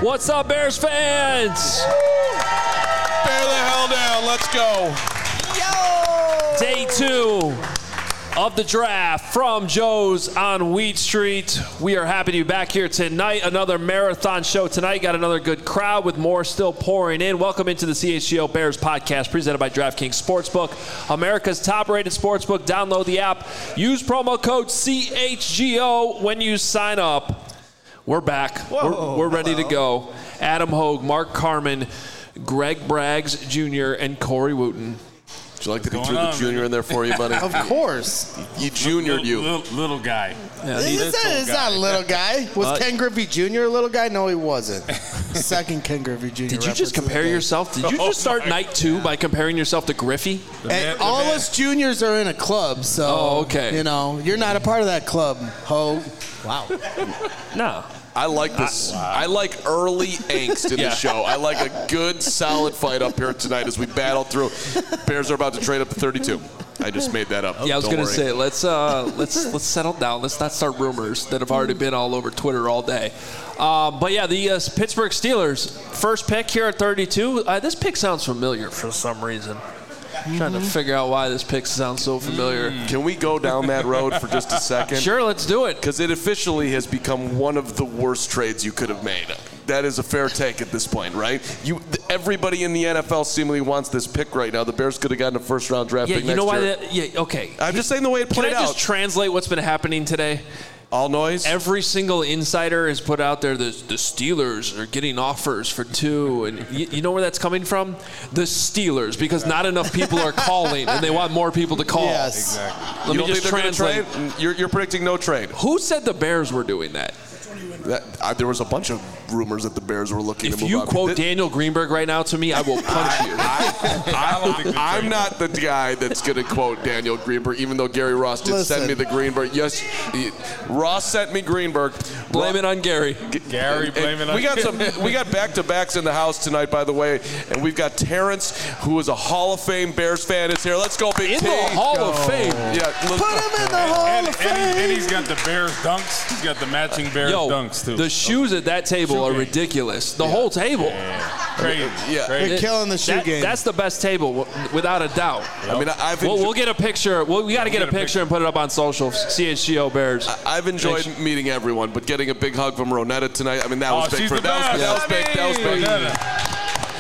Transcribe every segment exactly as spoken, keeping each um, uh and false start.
What's up, Bears fans? Bear the hell down. Let's go. Yo! Day two of the draft from Joe's on Wheat Street. We are happy to be back here tonight. Another marathon show tonight. Got another good crowd with more still pouring in. Welcome into the C H G O Bears podcast presented by DraftKings Sportsbook, America's top-rated sportsbook. Download the app. Use promo code C H G O when you sign up. We're back. Whoa, we're, we're ready to go. Adam Hogue, Mark Carman, Greg Braggs Junior, and Corey Wooten. Would you like to threw the junior in there for you, buddy? Of course. You juniored you. Little, little guy. Yeah, he's it's not a little guy. Was uh, Ken Griffey Junior a little guy? No, he wasn't. Second Ken Griffey Junior Did you just compare yourself? Did you just start oh night two by comparing yourself to Griffey? Man, all of us juniors are in a club, so oh, okay. you know, you're not a part of that club, Ho. Wow. No. I like this. Wow. I like early angst in yeah. the show. I like a good, solid fight up here tonight as we battle through. Bears are about to trade up to thirty-two. I just made that up. Yeah, I was going to say let's uh, let's let's settle down. Let's not start rumors that have already been all over Twitter all day. Uh, but yeah, the uh, Pittsburgh Steelers first pick here at thirty-two. Uh, this pick sounds familiar for some reason. I'm trying to figure out why this pick sounds so familiar. Can we go down that road for just a second? Sure, let's do it. Because it officially has become one of the worst trades you could have made. That is a fair take at this point, right? You, everybody in the N F L seemingly wants this pick right now. The Bears could have gotten a first-round draft yeah, pick you next know why year. That, yeah, okay. I'm just saying the way it played out. Can I just out. translate what's been happening today? All noise? Every single insider has put out there the, the Steelers are getting offers for two. And you, you know where that's coming from? The Steelers, because not enough people are calling, and they want more people to call. Yes. Exactly. Let you me don't just think translate. Trade? You're, you're predicting no trade. Who said the Bears were doing that? That, uh, there was a bunch of rumors that the Bears were looking if to move you up. quote Th- Daniel Greenberg right now to me, I will punch you. I, I, I'm not the guy that's going to quote Daniel Greenberg, even though Gary Ross did Listen. send me the Greenberg. Yes, he, Ross sent me Greenberg. Blame it on Gary. G- Gary, blame it on we got some. We got back-to-backs in the house tonight, by the way, and we've got Terrence, who is a Hall of Fame Bears fan, is here. Let's go, Big In T. the Hall go. of Fame. Yeah, Put him in the Hall and, of and, Fame. and, he, and he's got the Bears dunks. He's got the matching Bears Yo, dunks, too. the shoes at that table Shoe are game. ridiculous. The yeah. whole table. Yeah. Crazy. Yeah. Crazy. They're killing the shoe that, game. That's the best table, without a doubt. I mean, I've We'll, enjoyed, we'll get a picture. Well, we got to get, get a picture, picture and put it up on social. C H G O Bears. I, I've enjoyed Thanks. meeting everyone, but getting a big hug from Ronetta tonight, I mean, that oh, was big she's for the that was, best. that was big. That was big. Ronetta.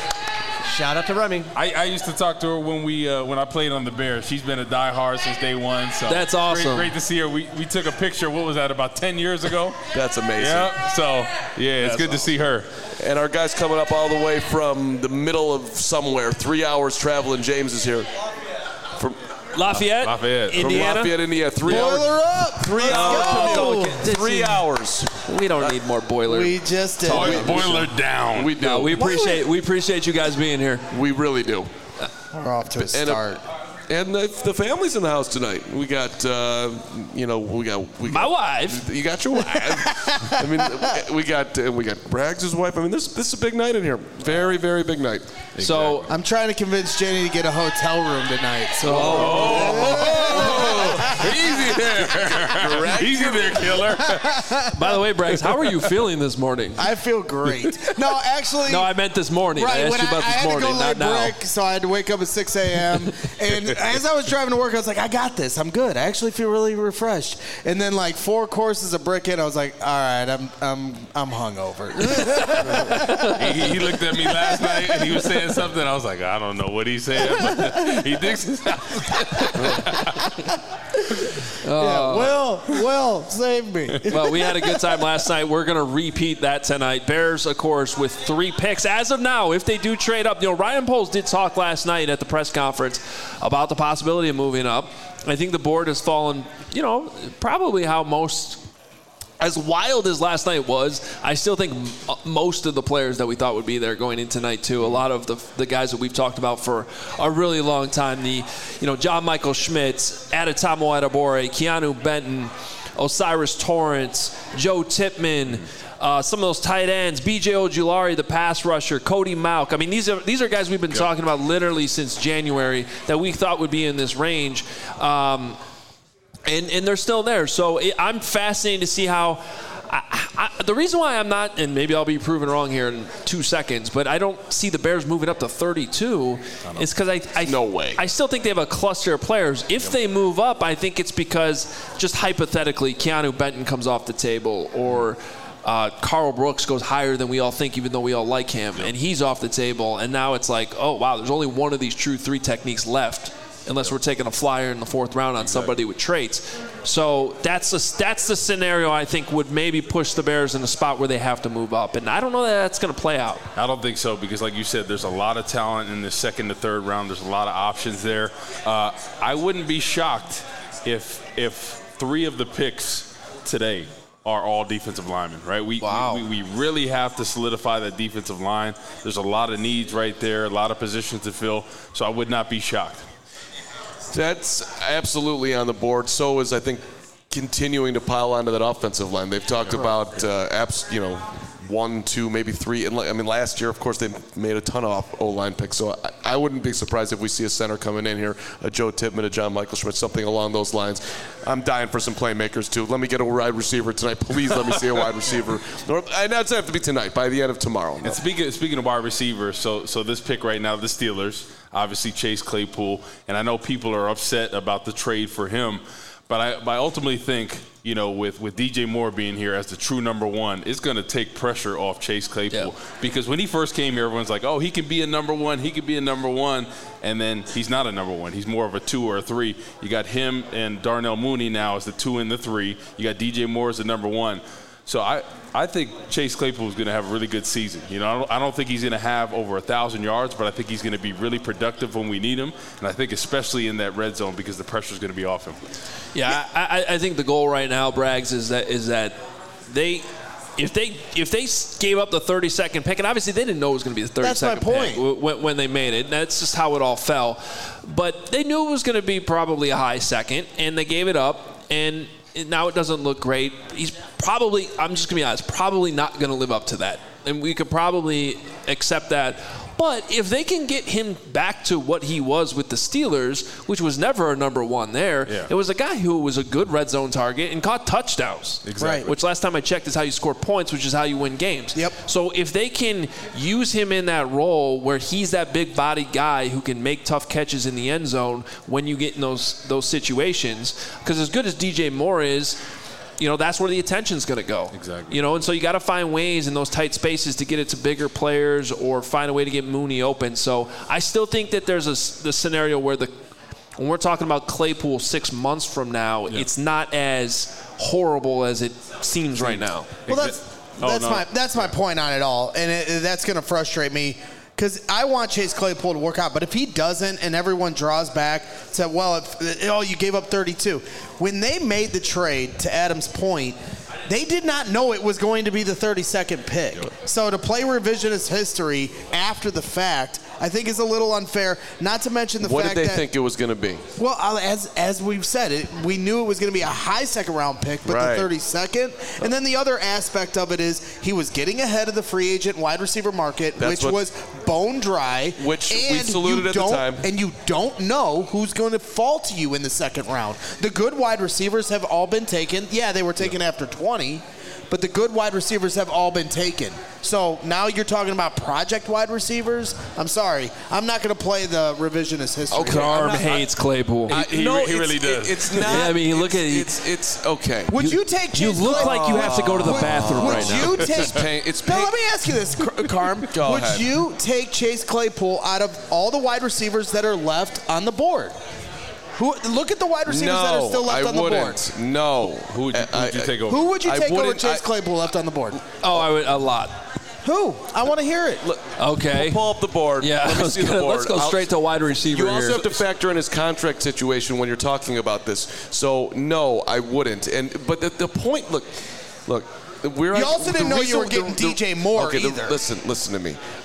Shout out to Remy. I, I used to talk to her when we uh, when I played on the Bears. She's been a diehard since day one. So that's awesome. Great, great to see her. We we took a picture. What was that? About ten years ago. That's amazing. Yeah. So yeah, it's that's good awesome. to see her. And our guys coming up all the way from the middle of somewhere, three hours traveling. James is here. From Lafayette, Lafayette, Indiana. From Lafayette, Indiana. Three Boiler hours. up. Three Let's hours. go. Three hours. We don't need more boiler. We just did. Boiler, boiler down. We do. No, we appreciate we appreciate you guys being here. We really do. We're off to a And, start. uh, and the, the family's in the house tonight. We got, uh, you know, we got we My got, wife. You got your wife. I mean, we got uh, we got Braggs' wife. I mean, this this is a big night in here. Very very big night. Exactly. So I'm trying to convince Jenny to get a hotel room tonight. So. Oh, easy there. Easy there, killer. by the way, Braggs, how are you feeling this morning? I feel great. No, actually. No, I meant this morning. Right, I asked when you about I, I this had morning, to go not lay now. brick, so I had to wake up at six a.m. And as I was driving to work, I was like, I got this. I'm good. I actually feel really refreshed. And then like four courses of brick in, I was like, all right, I'm I'm I'm hungover. he, he looked at me last night and he was saying something. I was like, I don't know what he said, but he thinks it's Yeah, Will, Will, save me. Well, we had a good time last night. We're going to repeat that tonight. Bears, of course, with three picks. As of now, if they do trade up, you know, Ryan Poles did talk last night at the press conference about the possibility of moving up. I think the board has fallen, you know, probably how most, as wild as last night was, I still think most of the players that we thought would be there going into night two, a lot of the the guys that we've talked about for a really long time, the, you know, John Michael Schmitz, Adetomo Adebawore, Keanu Benton, Osiris Torrance, Joe Tippmann, uh, some of those tight ends, B J Ojulari, the pass rusher, Cody Mauch. I mean, these are these are guys we've been yep. talking about literally since January that we thought would be in this range. Um, And and they're still there. So it, I'm fascinated to see how I, I, the reason why I'm not, and maybe I'll be proven wrong here in two seconds, but I don't see the Bears moving up to thirty-two is because I, I no way. I still think they have a cluster of players. If yep. they move up, I think it's because just hypothetically Keanu Benton comes off the table, or uh, Carl Brooks goes higher than we all think, even though we all like him, yep. and he's off the table. And now it's like, oh wow, there's only one of these true three techniques left. Unless we're taking a flyer in the fourth round on exactly. somebody with traits. So that's a, that's the scenario I think would maybe push the Bears in a spot where they have to move up. And I don't know that that's going to play out. I don't think so because, like you said, there's a lot of talent in the second to third round. There's a lot of options there. Uh, I wouldn't be shocked if if three of the picks today are all defensive linemen, right? We, wow. we we really have to solidify that defensive line. There's a lot of needs right there, a lot of positions to fill. So I would not be shocked. That's absolutely on the board. So is, I think, continuing to pile onto that offensive line. They've talked about, uh, apps, you know, one, two, maybe three. And I mean, last year, of course, they made a ton of O-line picks. So I, I wouldn't be surprised if we see a center coming in here, a Joe Tippmann, a John Michael Schmidt, something along those lines. I'm dying for some playmakers, too. Let me get a wide receiver tonight. Please let me see a wide receiver. And that's have to be tonight, by the end of tomorrow. No. And speaking, speaking of wide receivers, so so this pick right now, the Steelers, obviously Chase Claypool, and I know people are upset about the trade for him, but I, but I ultimately think, you know, with, with D J Moore being here as the true number one, it's going to take pressure off Chase Claypool. Yeah. Because when he first came here, everyone's like, oh, he can be a number one, he could be a number one, and then he's not a number one. He's more of a two or a three. You got him and Darnell Mooney now as the two and the three. You got D J Moore as the number one. So I, I think Chase Claypool is going to have a really good season. You know, I don't, I don't think he's going to have over a thousand yards, but I think he's going to be really productive when we need him, and I think especially in that red zone because the pressure is going to be off him. Yeah, I, I think the goal right now, Braggs, is that is that they. If they if they gave up the thirty-second pick, and obviously they didn't know it was going to be the thirty-second pick when, when they made it. That's just how it all fell. But they knew it was going to be probably a high second, and they gave it up, and now it doesn't look great. He's probably, I'm just going to be honest, probably not going to live up to that. And we could probably accept that. But if they can get him back to what he was with the Steelers, which was never a number one there, yeah. it was a guy who was a good red zone target and caught touchdowns. Exactly. Which last time I checked is how you score points, which is how you win games. Yep. So if they can use him in that role where he's that big body guy who can make tough catches in the end zone when you get in those those situations, because as good as D J Moore is, you know, that's where the attention's going to go. Exactly. You know, and so you got to find ways in those tight spaces to get it to bigger players or find a way to get Mooney open. So I still think that there's a the scenario where the when we're talking about Claypool six months from now, yeah. it's not as horrible as it seems right now. Well, that's that's oh, no. my that's my point on it all, and it, that's going to frustrate me. Because I want Chase Claypool to work out, but if he doesn't and everyone draws back, say, well, if, oh, you gave up thirty-two. When they made the trade, to Adam's point, they did not know it was going to be the thirty-second pick. So to play revisionist history after the fact, I think is a little unfair, not to mention the what fact that... What did they think it was going to be? Well, as as we've said, it, we knew it was going to be a high second-round pick, but right. the thirty-second. And then the other aspect of it is he was getting ahead of the free agent wide receiver market, That's which was bone dry. Which and we saluted at the time. And you don't know who's going to fall to you in the second round. The good wide receivers have all been taken. Yeah, they were taken yeah. after twenty. But the good wide receivers have all been taken. So now you're talking about project wide receivers? I'm sorry. I'm not going to play the revisionist history. Okay. Carm hates Claypool. I, he, no, he really does. It, it's not. Yeah, I mean, look at it. It's, it's okay. Would you, you take Chase You look Claypool? like you have to go to the would, bathroom would right now. You take, it's pain. It's pain. Now, let me ask you this, Carm. Go would ahead. you take Chase Claypool out of all the wide receivers that are left on the board? Who, look at the wide receivers no, that are still left I on the wouldn't. board. No. Who would you, who would you take over? Who would you I take over wouldn't- Chase I- Claypool left on the board? Oh, I would a lot. Who? I want to hear it. Look, Okay. We'll pull up the board. Yeah, Let me let's see go, the board. let's go straight to wide receiver You also here. have to factor in his contract situation when you're talking about this. So, no, I wouldn't. And But the, the point, look, look. We're You also didn't know you were getting D J Moore okay, either. The, listen, listen to me.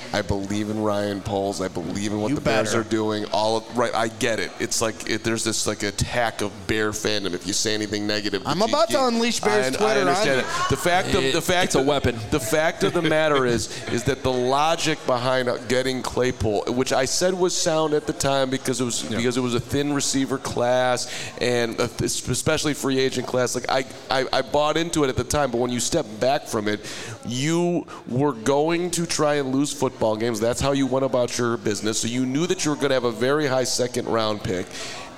I believe in Ryan Poles. I believe in what You the Bears better. are doing. All of, right, I get it. It's like it, there's this like attack of Bear fandom. If you say anything negative, I'm you- about you- to unleash Bears I, Twitter I on understand you. it. The fact of It- the fact it's a of- weapon. The fact of the matter is is that the logic behind getting Claypool, which I said was sound at the time because it was Yeah. because it was a thin receiver class and especially free agent class. Like I, I I bought into it at the time, but when you step back from it, you were going to try and lose football games. That's how you went about your business. So you knew that you were going to have a very high second round pick.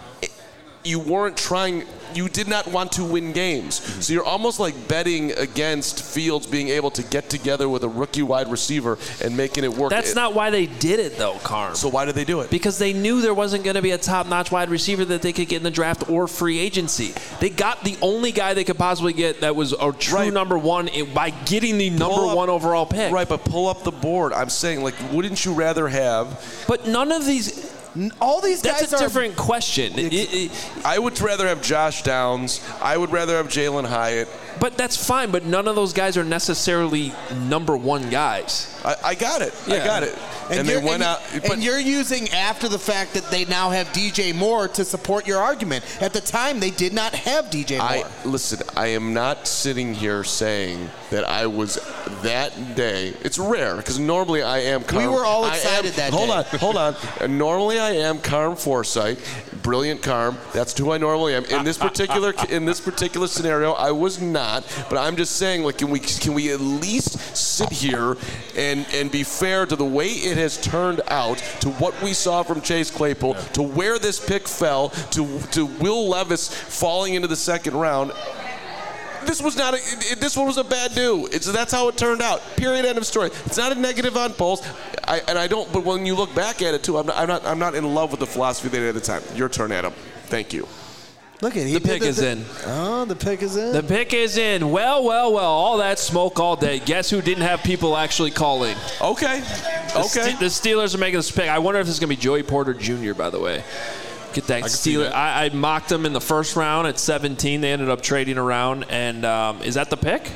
You weren't trying, you did not want to win games. Mm-hmm. So you're almost like betting against Fields being able to get together with a rookie wide receiver and making it work. That's It- not why they did it, though, Carm. So why did they do it? Because they knew there wasn't going to be a top-notch wide receiver that they could get in the draft or free agency. They got the only guy they could possibly get that was a true Right. number one i- by getting the number Pull up- one overall pick. Right, but pull up the board. I'm saying, like, wouldn't you rather have... But none of these... All these guys That's a are different question. It- it- I would rather have Josh Downs. I would rather have Jalen Hyatt. but that's fine, but none of those guys are necessarily number one guys. I, I got it. I Yeah. got it. And, they you're- went and, out... and But you're using after the fact that they now have D J Moore to support your argument. At the time, they did not have D J Moore. I listen. I am not sitting here saying that I was that day. It's rare because normally I am. Carm, We were all I am- excited that hold day. on, hold on. And normally I am Carm Forsyth, brilliant Carm. That's who I normally am. In this particular in this particular scenario, I was not. But I'm just saying, like, can we can we at least sit here and and be fair to the way it has turned out, to what we saw from Chase Claypool, to where this pick fell, to to Will Levis falling into the second round. This was not a, it, it- this one was a bad do. It's that's how it turned out. Period. End of story. It's not a negative on Poles. I, and I don't. But when you look back at it too, I'm not. I'm not. I'm not in love with the philosophy they did at the time. Your turn, Adam. Thank you. Look at he The did pick is in. Oh, the pick is in. The pick is in. Well, well, well. All that smoke all day. Guess who didn't have people actually calling? Okay. The Okay. Ste- the Steelers are making this pick. I wonder if this is going to be Joey Porter Junior, by the way. Get that can see Steeler. that. I, I mocked them in the first round at seventeen. They ended up trading around. And um, is that the pick?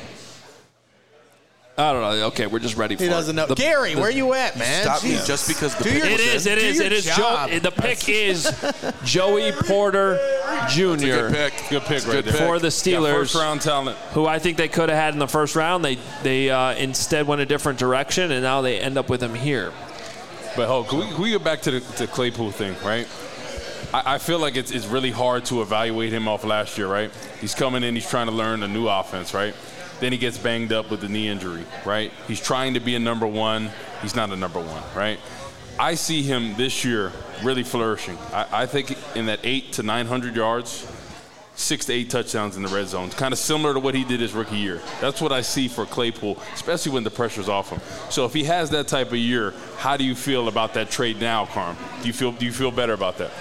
I don't know. Okay, we're just ready for he it. doesn't know. The- Gary, the- where you at, man? Stop me Jeez. just because the Do pick your- was It is. in. It Do is. your It is. job. Joe, the pick is Joey Porter Junior Good pick. Good pick right Good there. pick. for the Got Steelers. first round talent. Who I think they could have had in the first round. They they uh, instead went a different direction, and now they end up with him here. But hold, can we, can we get back to the to Claypool thing, right? I, I feel like it's, it's really hard to evaluate him off last year, right? He's coming in, he's trying to learn a new offense, right? Then he gets banged up with the knee injury, right? He's trying to be a number one. He's not a number one, right? I see him this year really flourishing. I, I think in that eight to nine hundred yards, six to eight touchdowns in the red zone. Kind of similar to what he did his rookie year. That's what I see for Claypool, especially when the pressure's off him. So if he has that type of year, how do you feel about that trade now, Carm? Do you feel do you feel better about that?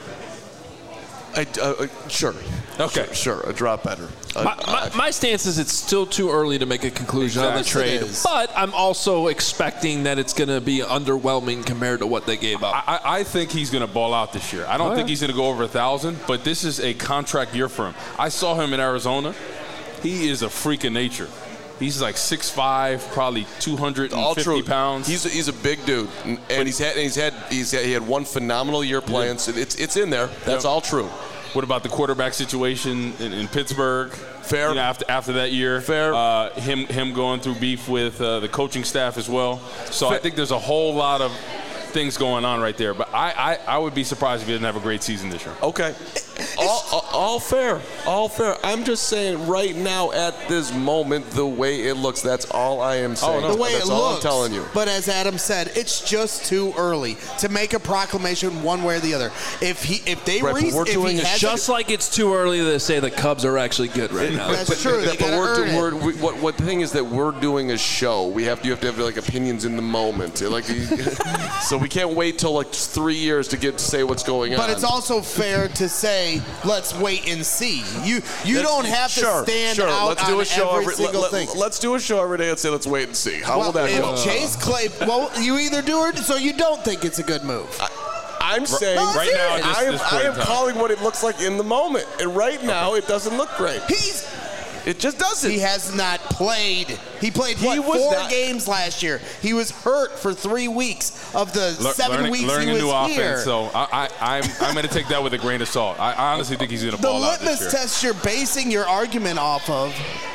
I, uh, uh, sure. Okay. Sure, sure. A drop better. Uh, My, my, my stance is it's still too early to make a conclusion on the Exactly. trade, It is. but I'm also expecting that it's going to be underwhelming compared to what they gave up. I, I think he's going to ball out this year. I don't Oh, think yeah. he's going to go over a thousand, but this is a contract year for him. I saw him in Arizona. He is a freak of nature. He's like six five, probably two hundred all fifty true. pounds. He's a, he's a big dude, and, and he's had he's had he's had, he had one phenomenal year playing. So it's it's in there. That's Yeah. all true. What about the quarterback situation in, in Pittsburgh? Fair. You know, after after that year, Fair. Uh, him him going through beef with uh, the coaching staff as well. So I Fair. think there's a whole lot of things going on right there. But I, I, I would be surprised if he didn't have a great season this year. Okay. All, all, all fair. All fair. I'm just saying right now at this moment, the way it looks, that's all I am saying. no. The way that's it all looks. I'm telling you. But as Adam said, it's just too early to make a proclamation one way or the other. If he, if they, Right, but re- we're if he doing a has Just like it's too early to say the Cubs are actually good right now. That's true. They But gotta we're, earn do- it. we're, we, what, what the thing is that we're doing a show. We have to, you have to have like opinions in the moment. Like, so we can't wait till like three years to get to say what's going on. But it's also fair to say, let's wait and see. You you Let's- don't have sure, to stand sure. out let's on do a show every every, single let, thing. Let's do a show every day and say let's wait and see. How well, will that if go? Chase Clay, well, you either do it, so you don't think it's a good move. I'm saying No, Right now, at this- I am, this I point in am time. calling what it looks like in the moment, and right now it doesn't look great. He's It just doesn't. he has not played. He played, what, he four not, games last year. He was hurt for three weeks of the Le- seven learning, weeks learning he was a new here. offense, so I, I, I'm, I'm going to take that with a grain of salt. I, I honestly think he's going to ball out this year. The litmus test you're basing your argument off of.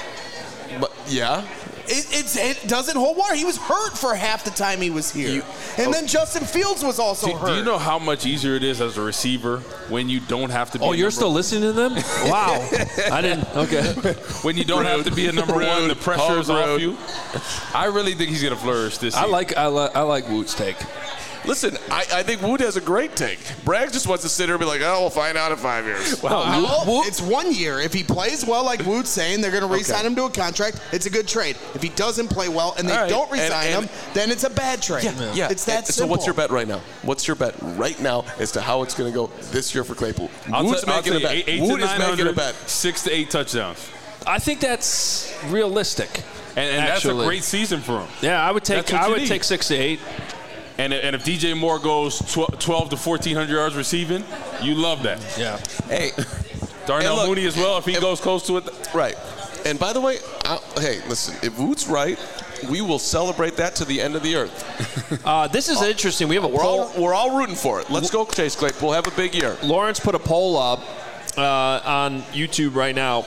But, yeah. It, it's, it doesn't hold water. He was hurt for half the time he was here. You, and oh, then Justin Fields was also do, hurt. Do you know how much easier it is as a receiver when you don't have to be Oh, a you're number still listening to them? Wow. I didn't. Okay. When you don't rude, have to be a number rude, one, the pressure is off rude. you. I really think he's going to flourish this year. I like, I, li- I like Woot's take. Listen, I, I think Woot has a great take. Bragg just wants to sit here and be like, oh, we'll find out in five years. Well, well Woot, it's one year. If he plays well, like Woot's saying, they're going to re-sign okay. him to a contract. It's a good trade. If he doesn't play well and they right. don't re-sign and, and, him, then it's a bad trade. Yeah, yeah. It's that and, simple. So what's your bet right now? What's your bet right now as to how it's going to go this year for Claypool? I'll Woot's t- making I'll a bet. Eight, eight Woot is making a bet. Six to eight touchdowns. I think that's realistic. And, and that's a great season for him. Yeah, I would take I would need. take six to eight. And, and if D J Moore goes twelve to fourteen hundred yards receiving, you love that. Yeah. Hey. Darnell look, Mooney as well, if he and, goes close to it. Right. And by the way, I'll, hey, listen, if Woot's right, we will celebrate that to the end of the earth. Uh, this is uh, interesting. We have a we're poll. All, we're all rooting for it. Let's go, Chase Claypool. Have a big year. Lawrence put a poll up uh, on YouTube right now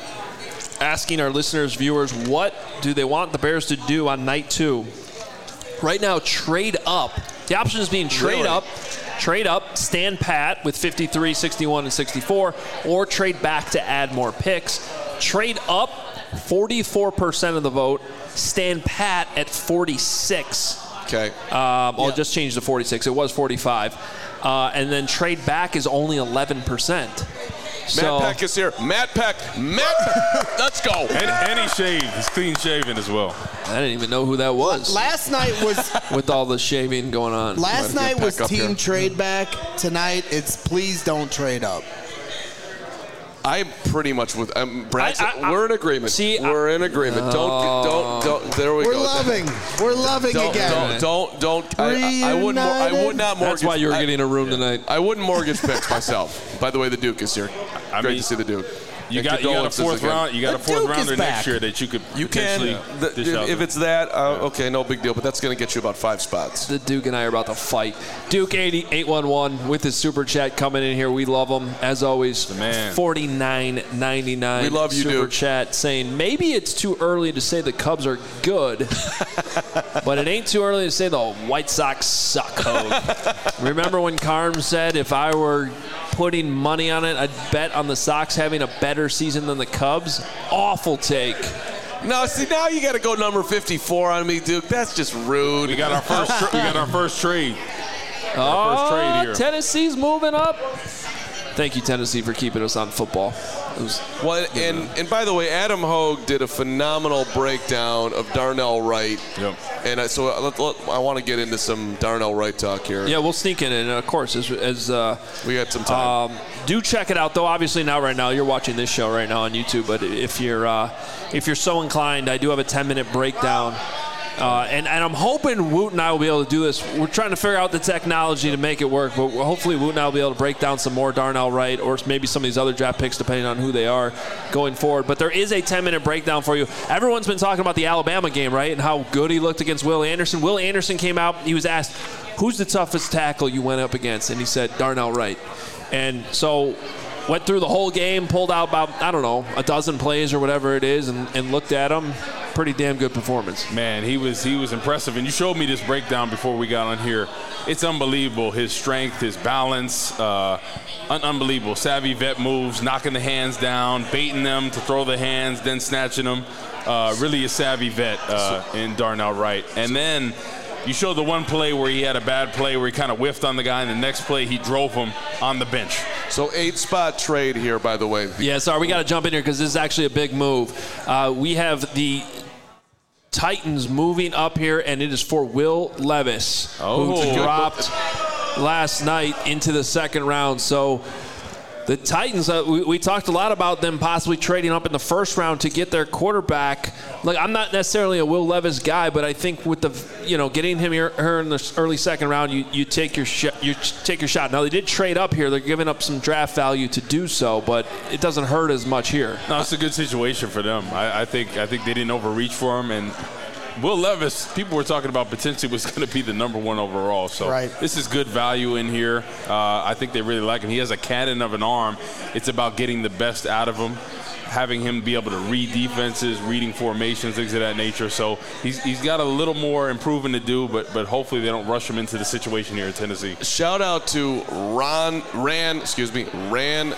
asking our listeners, viewers, what do they want the Bears to do on night two? Right now, trade up. The option is being trade really? up, trade up, stand pat with fifty-three, sixty-one, and sixty-four, or trade back to add more picks. Trade up, forty-four percent of the vote. Stand pat at forty-six. Okay. Um, I'll yeah. just change to forty-six. It was forty-five. Uh, and then trade back is only eleven percent. So, Matt Peck is here. Matt Peck. Matt Peck. Let's go. And, and he's shaved. He's clean shaven as well. I didn't even know who that was. Last night was with all the shaving going on. Last night was team here. Trade back. Tonight it's please don't trade up. I'm pretty much with um, Brad. I, I, we're in agreement. See, we're I, in agreement. Uh, don't, don't, don't. There we we're go. We're loving. We're loving don't, again. Don't, don't, don't. I, I wouldn't. I would not mortgage. That's why you were I, getting a room tonight. I wouldn't mortgage picks myself. By the way, the Duke is here. I Great mean, to see the Duke. You got, you got a fourth again. round. You got the a fourth Duke rounder next back. year that you could you potentially can. The, dish if, out if it's that, uh, okay, no big deal. But that's going to get you about five spots. The Duke and I are about to fight. Duke eighty eight one one with his super chat coming in here. We love him as always. The man. forty-nine ninety-nine. We love you, super Duke. chat saying maybe it's too early to say the Cubs are good, but it ain't too early to say the White Sox suck. Hogue. Remember when Carm said if I were putting money on it, I'd bet on the Sox having a better season than the Cubs? Awful take. No, see now you got to go number fifty-four on me, Duke. That's just rude. We got our first. Tra- we got our first trade. Oh, our first trade here. Tennessee's moving up. Thank you, Tennessee, for keeping us on football. It was, well, and, and by the way, Adam Hogue did a phenomenal breakdown of Darnell Wright. Yep. And I, so I, let, let, I want to get into some Darnell Wright talk here. Yeah, we'll sneak in, and of course, as, as uh, we got some time. Um, do check it out, though. Obviously, now right now you're watching this show right now on YouTube. But if you're uh, if you're so inclined, I do have a ten minute breakdown. Uh, and, and I'm hoping Woot and I will be able to do this. We're trying to figure out the technology to make it work, but hopefully Woot and I will be able to break down some more Darnell Wright or maybe some of these other draft picks, depending on who they are going forward. But there is a ten minute breakdown for you. Everyone's been talking about the Alabama game, right, and how good he looked against Will Anderson. Will Anderson came out. He was asked, who's the toughest tackle you went up against? And he said, Darnell Wright. And so went through the whole game, pulled out about, I don't know, a dozen plays or whatever it is, and, and looked at him. Pretty damn good performance. Man, he was he was impressive. And you showed me this breakdown before we got on here. It's unbelievable. His strength, his balance, uh, un- unbelievable. Savvy vet moves, knocking the hands down, baiting them to throw the hands, then snatching them. Uh, really a savvy vet uh, in Darnell Wright. And then you showed the one play where he had a bad play where he kind of whiffed on the guy, and the next play he drove him on the bench. So eight-spot trade here, by the way. Yeah, sorry, we got to jump in here because this is actually a big move. Uh, we have the Titans moving up here, and it is for Will Levis, oh, who dropped last night into the second round. So The Titans, uh, we, we talked a lot about them possibly trading up in the first round to get their quarterback. Like, I'm not necessarily a Will Levis guy, but I think with the, you know, getting him here, her in the early second round, you, you take your sh- you take your shot. Now, they did trade up here. They're giving up some draft value to do so, but it doesn't hurt as much here. No, it's a good situation for them. I, I think I think they didn't overreach for him, and Will Levis, people were talking about potentially was going to be the number one overall. So right. This is good value in here. Uh, I think they really like him. He has a cannon of an arm. It's about getting the best out of him, having him be able to read defenses, reading formations, things of that nature. So he's he's got a little more improving to do, but but hopefully they don't rush him into the situation here in Tennessee. Shout out to Ron Ran, excuse me, Ran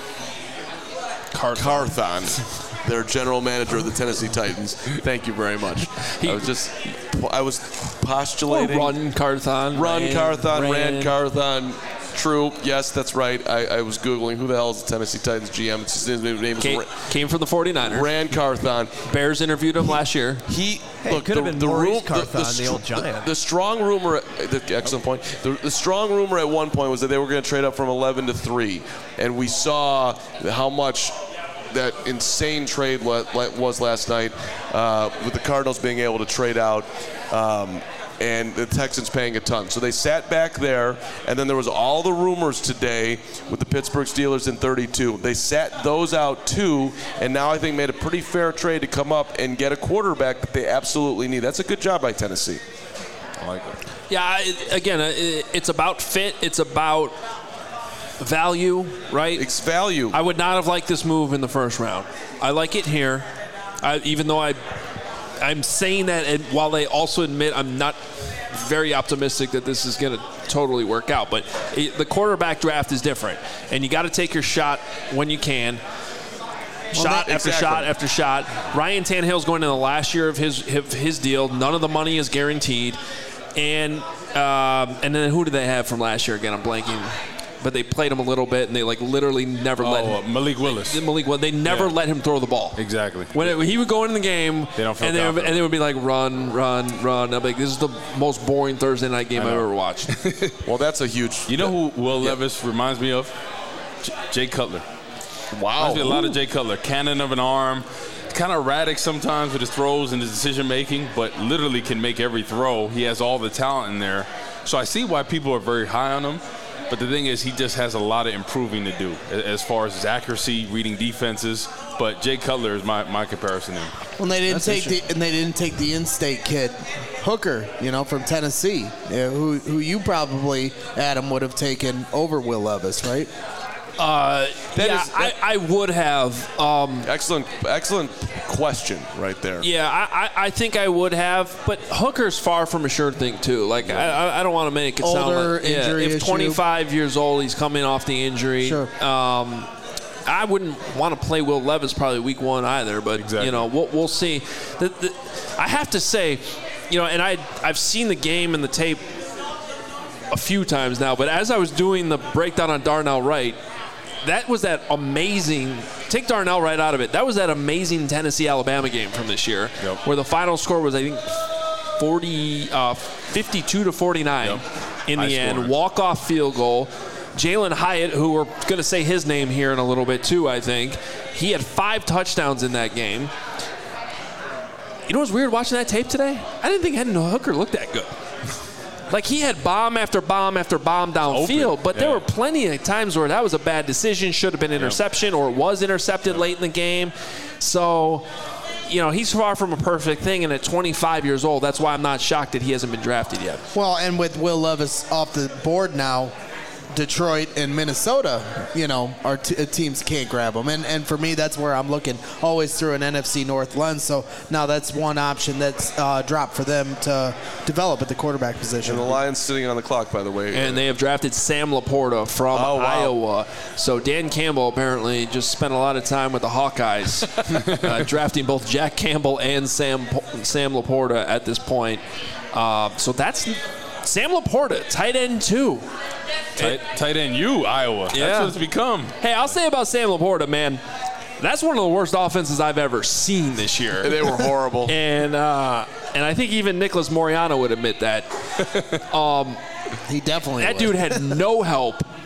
Carthon. Carthon. Their general manager of the Tennessee Titans. Thank you very much. He, I was just, I was postulating. Run Carthon. Run Ran, Carthon, Ran. Ran Carthon. True. Yes, that's right. I, I was Googling who the hell is the Tennessee Titans G M. It's his name is came, Ran, came from the forty-niners. Ran Carthon. Bears interviewed him last year. He hey, look, could have the, been the Maurice room, Carthon, the, the, the old giant. The, the strong rumor, the, excellent point. The, the strong rumor at one point was that they were going to trade up from eleven to three, and we saw how much that insane trade was last night uh, with the Cardinals being able to trade out um, and the Texans paying a ton. So they sat back there, and then there was all the rumors today with the Pittsburgh Steelers in thirty-two. They sat those out too, and now I think made a pretty fair trade to come up and get a quarterback that they absolutely need. That's a good job by Tennessee. I like it. Yeah, it, again, it, it's about fit. It's about value, right? It's value. I would not have liked this move in the first round. I like it here, I, even though I, I'm saying that, and while they also admit I'm not very optimistic that this is going to totally work out. But it, the quarterback draft is different, and you got to take your shot when you can. Shot well, after exactly. shot after shot. Ryan Tannehill's going into the last year of his his deal. None of the money is guaranteed, and um, and then who did they have from last year again? I'm blanking. But they played him a little bit, and they like literally never oh, let him. Uh, Malik Willis. Malik Willis. They never yeah. let him throw the ball. Exactly. When it, he would go into the game, they don't feel and, they would, and they would be like, run, run, run. I'm like, this is the most boring Thursday night game I've ever watched. Well, that's a huge. You know who Will yeah. Levis reminds me of? J- Jay Cutler. Wow. Reminds me a lot of Jay Cutler. Cannon of an arm. Kind of erratic sometimes with his throws and his decision making, but literally can make every throw. He has all the talent in there. So I see why people are very high on him. But the thing is, he just has a lot of improving to do as far as his accuracy, reading defenses. But Jay Cutler is my, my comparison to him. Well, they didn't take the and they didn't take the in-state kid, Hooker, you know, from Tennessee, yeah, who who you probably, Adam, would have taken over Will Levis, right? Uh, yeah, is, that, I, I would have. Um, excellent, excellent question right there. Yeah, I, I, I think I would have, but Hooker's far from a sure thing too. Like yeah. I, I don't want to make it Older, sound like injury yeah, if issue. twenty-five years old, he's coming off the injury. Sure. Um, I wouldn't want to play Will Levis probably week one either, but exactly. you know we'll, we'll see. The, the, I have to say, you know, and I I've seen the game and the tape a few times now, but as I was doing the breakdown on Darnell Wright. That was that amazing – take Darnell right out of it. That was that amazing Tennessee-Alabama game from this year yep. where the final score was, I think, forty, uh, fifty-two to forty-nine yep. in High the end. scoring. Walk-off field goal. Jalen Hyatt, who we're going to say his name here in a little bit too, I think, he had five touchdowns in that game. You know what's weird watching that tape today? I didn't think Hendon Hooker looked that good. Like, he had bomb after bomb after bomb downfield, but yeah. there were plenty of times where that was a bad decision, should have been interception, yeah. or it was intercepted late in the game. So, you know, he's far from a perfect thing, and at twenty-five years old, that's why I'm not shocked that he hasn't been drafted yet. Well, and with Will Levis off the board now, Detroit and Minnesota, you know, our t- teams can't grab them. And and for me, that's where I'm looking always through an N F C North lens. So now that's one option that's uh, dropped for them to develop at the quarterback position. And the Lions sitting on the clock, by the way. And they have drafted Sam Laporta from oh, wow. Iowa. So Dan Campbell apparently just spent a lot of time with the Hawkeyes, uh, drafting both Jack Campbell and Sam Sam Laporta at this point. Uh, so that's Sam Laporta, tight end two. Tight, tight end you, Iowa. Yeah. That's what it's become. Hey, I'll say about Sam Laporta, man, that's one of the worst offenses I've ever seen this year. They were horrible. and uh, and I think even Nicholas Moriano would admit that. Um, he definitely That would. dude had no help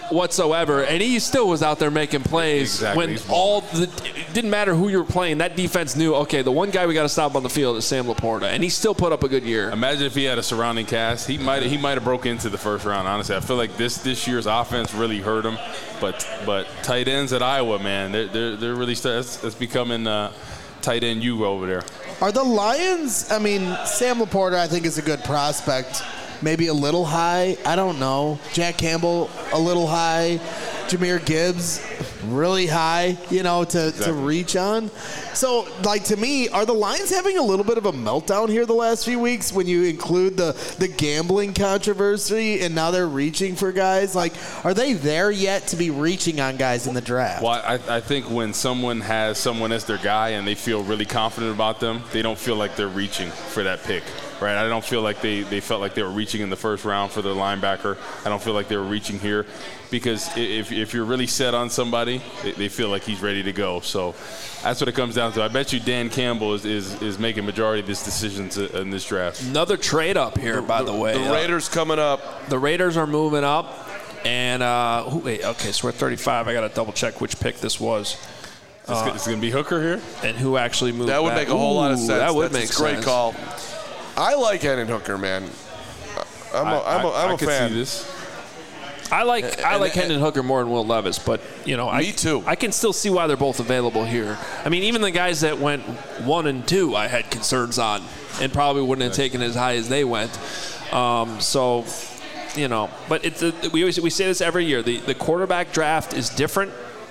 whatsoever, and he still was out there making plays exactly. when all the it didn't matter who you were playing. That defense knew, okay, the one guy we got to stop on the field is Sam Laporta, and he still put up a good year. Imagine if he had a surrounding cast. He might he might have broke into the first round. Honestly, I feel like this this year's offense really hurt him. But but tight ends at Iowa, man, they're they're, they're really it's, it's becoming uh, tight end you over there. Are the Lions? I mean, Sam Laporta, I think, is a good prospect. Maybe a little high. I don't know. Jack Campbell, a little high. Jahmyr Gibbs, really high, you know, to, exactly. to reach on. So, like, to me, are the Lions having a little bit of a meltdown here the last few weeks when you include the, the gambling controversy and now they're reaching for guys? Like, are they there yet to be reaching on guys in the draft? Well, I, I think when someone has someone as their guy and they feel really confident about them, they don't feel like they're reaching for that pick. Right, I don't feel like they, they felt like they were reaching in the first round for their linebacker. I don't feel like they were reaching here because if if you're really set on somebody, they, they feel like he's ready to go. So that's what it comes down to. I bet you Dan Campbell is is, is making majority of this decision to, in this draft. Another trade up here, by the, the way. The Raiders uh, coming up. The Raiders are moving up, and uh, wait, okay, so we're at thirty-five. I got to double check which pick this was. Uh, it's going to be Hooker here, and who actually moved? That would back. make a whole Ooh, lot of sense. That would That's make a great sense. call. I like Hendon Hooker, man. I'm a, I, I'm a, I'm I, a I fan. can see this. I like And- I like and- Hendon Hooker more than Will Levis, but you know, I, Me too. I can still see why they're both available here. I mean, even the guys that went one and two, I had concerns on, and probably wouldn't have taken as high as they went. Um, so, you know, but it's a, we always we say this every year. The the quarterback draft is different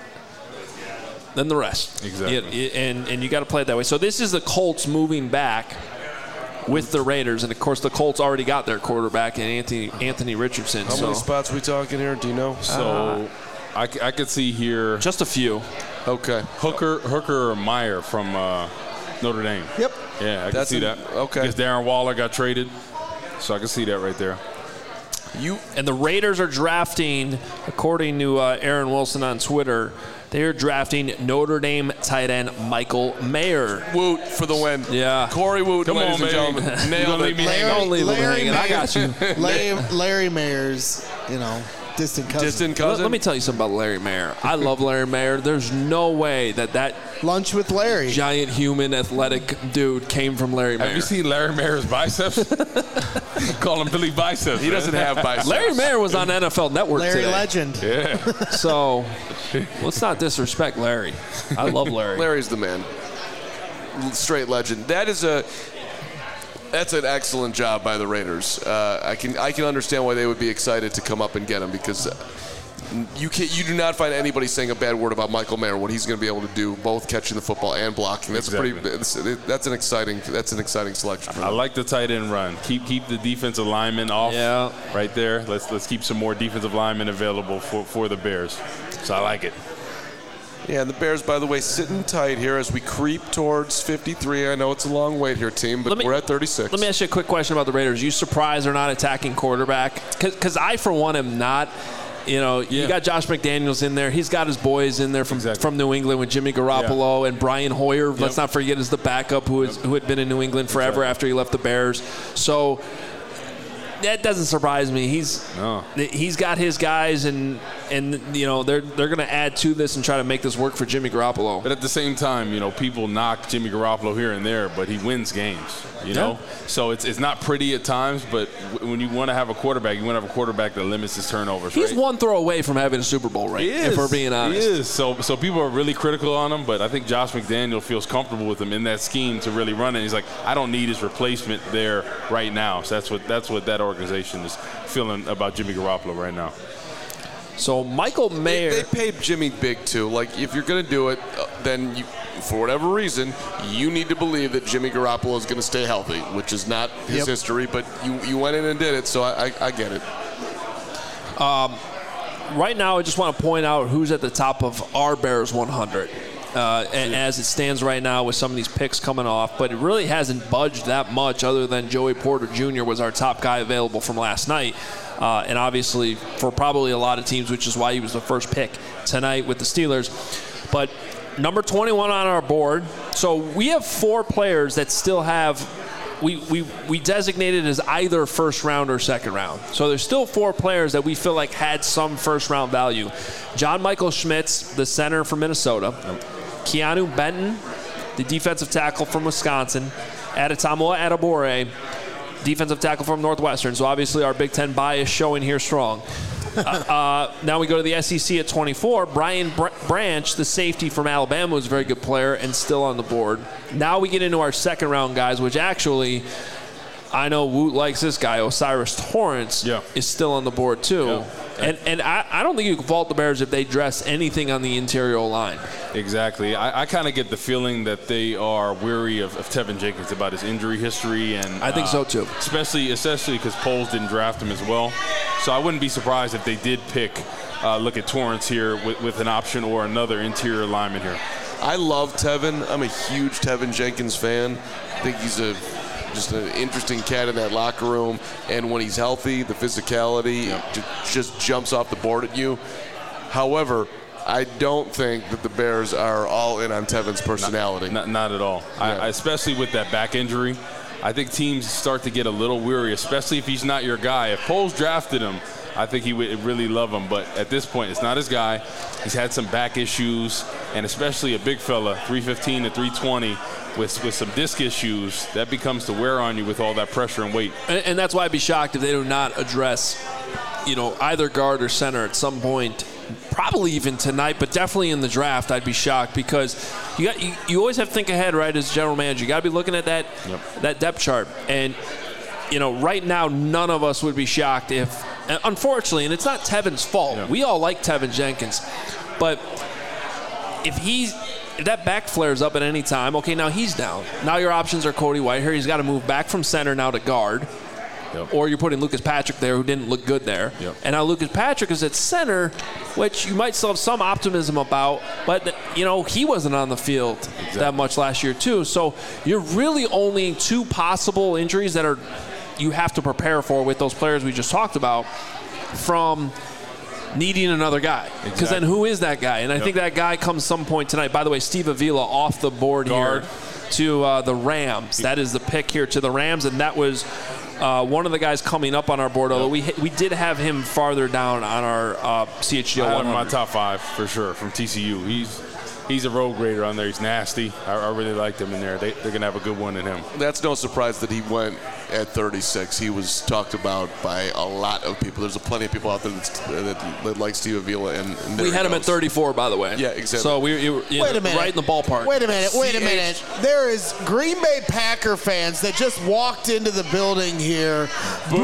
than the rest. Exactly. You- and and you got to play it that way. So this is the Colts moving back with the Raiders, and of course the Colts already got their quarterback in Anthony Anthony Richardson. How so. many spots we talking here? Do you know? So I, c- I could see here Just a few. Okay. Hooker Hooker or Meyer from uh, Notre Dame. Yep. Yeah, I can That's see an- that. okay. Because Darren Waller got traded, so I can see that right there. You And the Raiders are drafting, according to uh, Aaron Wilson on Twitter, they are drafting Notre Dame tight end Michael Mayer. Woot for the win. Yeah. Corey Woot, Come ladies on, and baby. gentlemen. You Nailed gonna it. leave me hanging? Don't leave him Larry hanging. I got you. Larry, Larry Mayer's, you know, distant cousin. Distant Let, cousin. let me tell you something about Larry Mayer. I love Larry Mayer. There's no way that that Lunch with Larry. giant human athletic dude came from Larry Mayer. Have you seen Larry Mayer's biceps? Call him Billy Biceps. He man. doesn't have biceps. Larry Mayer was on N F L Network Larry today. Legend. Yeah. So let's not disrespect Larry. I love Larry. Larry's the man. Straight legend. That is a. That's an excellent job by the Raiders. Uh, I can I can understand why they would be excited to come up and get him because you can you do not find anybody saying a bad word about Michael Mayer, what he's going to be able to do, both catching the football and blocking. That's Exactly. pretty. That's, that's an exciting. That's an exciting selection. For I them. like the tight end run. Keep keep the defensive linemen off. Yeah. Right there. Let's let's keep some more defensive linemen available for, for the Bears. So I like it. Yeah, and the Bears, by the way, sitting tight here as we creep towards fifty-three. I know it's a long wait here, team, but Let me- we're at thirty-six. Let me ask you a quick question about the Raiders. You surprised they're not attacking quarterback? Because I, for one, am not. You know, you Yeah. got Josh McDaniels in there. He's got his boys in there from Exactly. from New England with Jimmy Garoppolo and Brian Hoyer. Let's not forget is the backup who is who had been in New England forever Exactly. after he left the Bears. So that doesn't surprise me. He's No. he's got his guys, and and you know they're they're going to add to this and try to make this work for Jimmy Garoppolo. But at the same time, you know, people knock Jimmy Garoppolo here and there, but he wins games, you Yeah. know? So it's it's not pretty at times, but w- when you want to have a quarterback, you want to have a quarterback that limits his turnovers, He's right? one throw away from having a Super Bowl ring, He is. if we're being honest. He is. So, so people are really critical on him, but I think Josh McDaniel feels comfortable with him in that scheme to really run it. He's like, I don't need his replacement there right now. So that's what that's what that organization is feeling about Jimmy Garoppolo right now. So Michael Mayer. They, they paid Jimmy big too. Like if you're going to do it, uh, then you, for whatever reason, you need to believe that Jimmy Garoppolo is going to stay healthy, which is not his Yep. history. But you, you went in and did it, so I, I, I get it. Right now, I just want to point out who's at the top of our Bears one hundred. Uh, and as it stands right now with some of these picks coming off, but it really hasn't budged that much other than Joey Porter Junior was our top guy available from last night. Uh, and obviously for probably a lot of teams, which is why he was the first pick tonight with the Steelers. But number twenty-one on our board. So we have four players that still have we, we, we designated as either first round or second round. So there's still four players that we feel like had some first round value. John Michael Schmitz, the center from Minnesota. Yep. Keanu Benton, the defensive tackle from Wisconsin. Adetomoa Adebawore, defensive tackle from Northwestern. So obviously our Big Ten bias showing here strong. uh, uh, now we go to the S E C at twenty-four. Brian Br- Branch, the safety from Alabama, was a very good player and still on the board. Now we get into our second round guys, which actually, I know Woot likes this guy. Osiris Torrance yeah. is still on the board too. Yeah. And and I, I don't think you can fault the Bears if they dress anything on the interior line. Exactly. I, I kind of get the feeling that they are weary of, of Tevin Jenkins about his injury history. and I think uh, so too. Especially especially because Poles didn't draft him as well. So I wouldn't be surprised if they did pick, uh, look at Torrance here with, with an option or another interior lineman here. I love Tevin. I'm a huge Tevin Jenkins fan. I think he's a just an interesting cat in that locker room. And when he's healthy, the physicality yep. just, just jumps off the board at you. However, I don't think that the Bears are all in on Tevin's personality. Not, not, not at all. Yeah. I, I, especially with that back injury. I think teams start to get a little weary, especially if he's not your guy. If Poles drafted him, I think he would really love him. But at this point, it's not his guy. He's had some back issues, and especially a big fella, three fifteen to three twenty, with with some disc issues, that becomes to wear on you with all that pressure and weight. And, and that's why I'd be shocked if they do not address, you know, either guard or center at some point. Probably even tonight, but definitely in the draft, I'd be shocked because you got you, you always have to think ahead, right? As general manager, you got to be looking at that yep. that depth chart, and you know, right now, none of us would be shocked if, unfortunately, and it's not Tevin's fault. Yep. We all like Tevin Jenkins, but if he's if that back flares up at any time, okay, now he's down. Now your options are Cody Whitehair. He's got to move back from center now to guard. Yep. Or you're putting Lucas Patrick there, who didn't look good there. Yep. And now Lucas Patrick is at center, which you might still have some optimism about, but, you know, he wasn't on the field exactly. that much last year, too. So you're really only two possible injuries that are you have to prepare for with those players we just talked about from needing another guy. Because exactly. then who is that guy? And I yep. think that guy comes some point tonight. By the way, Steve Avila off the board Guard. here to uh, the Rams. That is the pick here to the Rams, and that was – Uh, one of the guys coming up on our board, although yep. we we did have him farther down on our uh, C H G O I one hundred. have him in my top five for sure from T C U. He's he's a road grader on there. He's nasty. I, I really liked him in there. They, they're going to have a good one in him. That's no surprise that he went at thirty-six. He was talked about by a lot of people. There's plenty of people out there that, that, that like Steve Avila. And, and we had him at thirty-four, by the way. Yeah, exactly. So we you, you wait know, a minute. right in the ballpark. Wait a minute. Wait a minute. There is Green Bay Packer fans that just walked into the building here. Boo!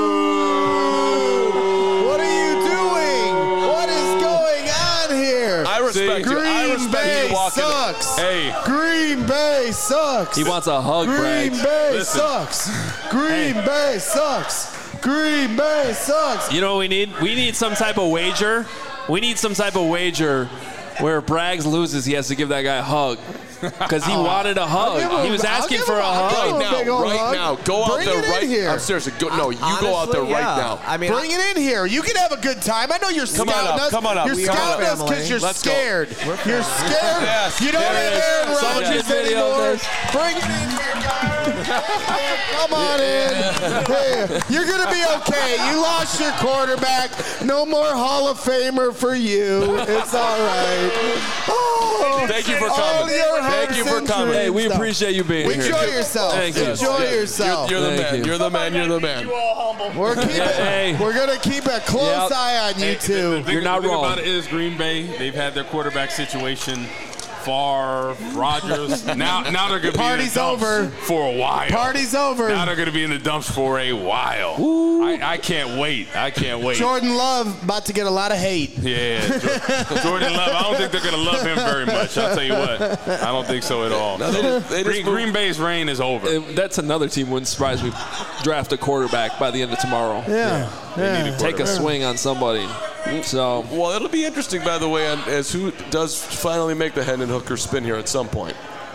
What are you doing? What is going on here? I respect Green you. I respect Bay you walking. sucks. Hey. Green Bay sucks. He wants a hug, Green Bragg. Bay Listen. sucks. Green hey. Bay sucks. Green Bay sucks. You know what we need? We need some type of wager. We need some type of wager where Braggs loses, he has to give that guy a hug. Because he oh. wanted a hug. Him, he was asking for a, a hug. Right now, right hug. now. Go Bring out there right here. I'm seriously. Go, no, you Honestly, go out there yeah. right now. I mean, Bring I, it in here. You can have a good time. I know you're come scouting on up, us. Come on up. You're we scouting us because you're Let's scared. Go. You're scared. Yes. You don't have Aaron Rodgers anymore. Bring it in here, guys. Come on in. Hey, you're going to be okay. You lost your quarterback. No more Hall of Famer for you. It's all right. Oh, Thank you for coming. Thank you for coming. Hey, we appreciate you being Enjoy here. Enjoy yourself. Thank you. Enjoy yourself. You're, you're the Thank man. you. You're the man. You're the man. You all humble. We're keeping. Hey. We're gonna keep a close Yep. eye on you Hey, two. The, the thing, You're not the thing wrong. about it is Green Bay, they've had their quarterback situation. Favre, Rodgers. Now, now they're going to be in the dumps over. for a while. Party's over. Now they're going to be in the dumps for a while. I, I can't wait. I can't wait. Jordan Love about to get a lot of hate. Yeah, Jordan Love. I don't think they're going to love him very much. I'll tell you what. I don't think so at all. No, they just, they Green, Green Bay's reign is over. And that's another team wouldn't surprise me. Draft a quarterback by the end of tomorrow. Yeah. They need a Take a swing on somebody. So, well, it'll be interesting, by the way, as who does finally make the Hendon Hooker spin here at some point.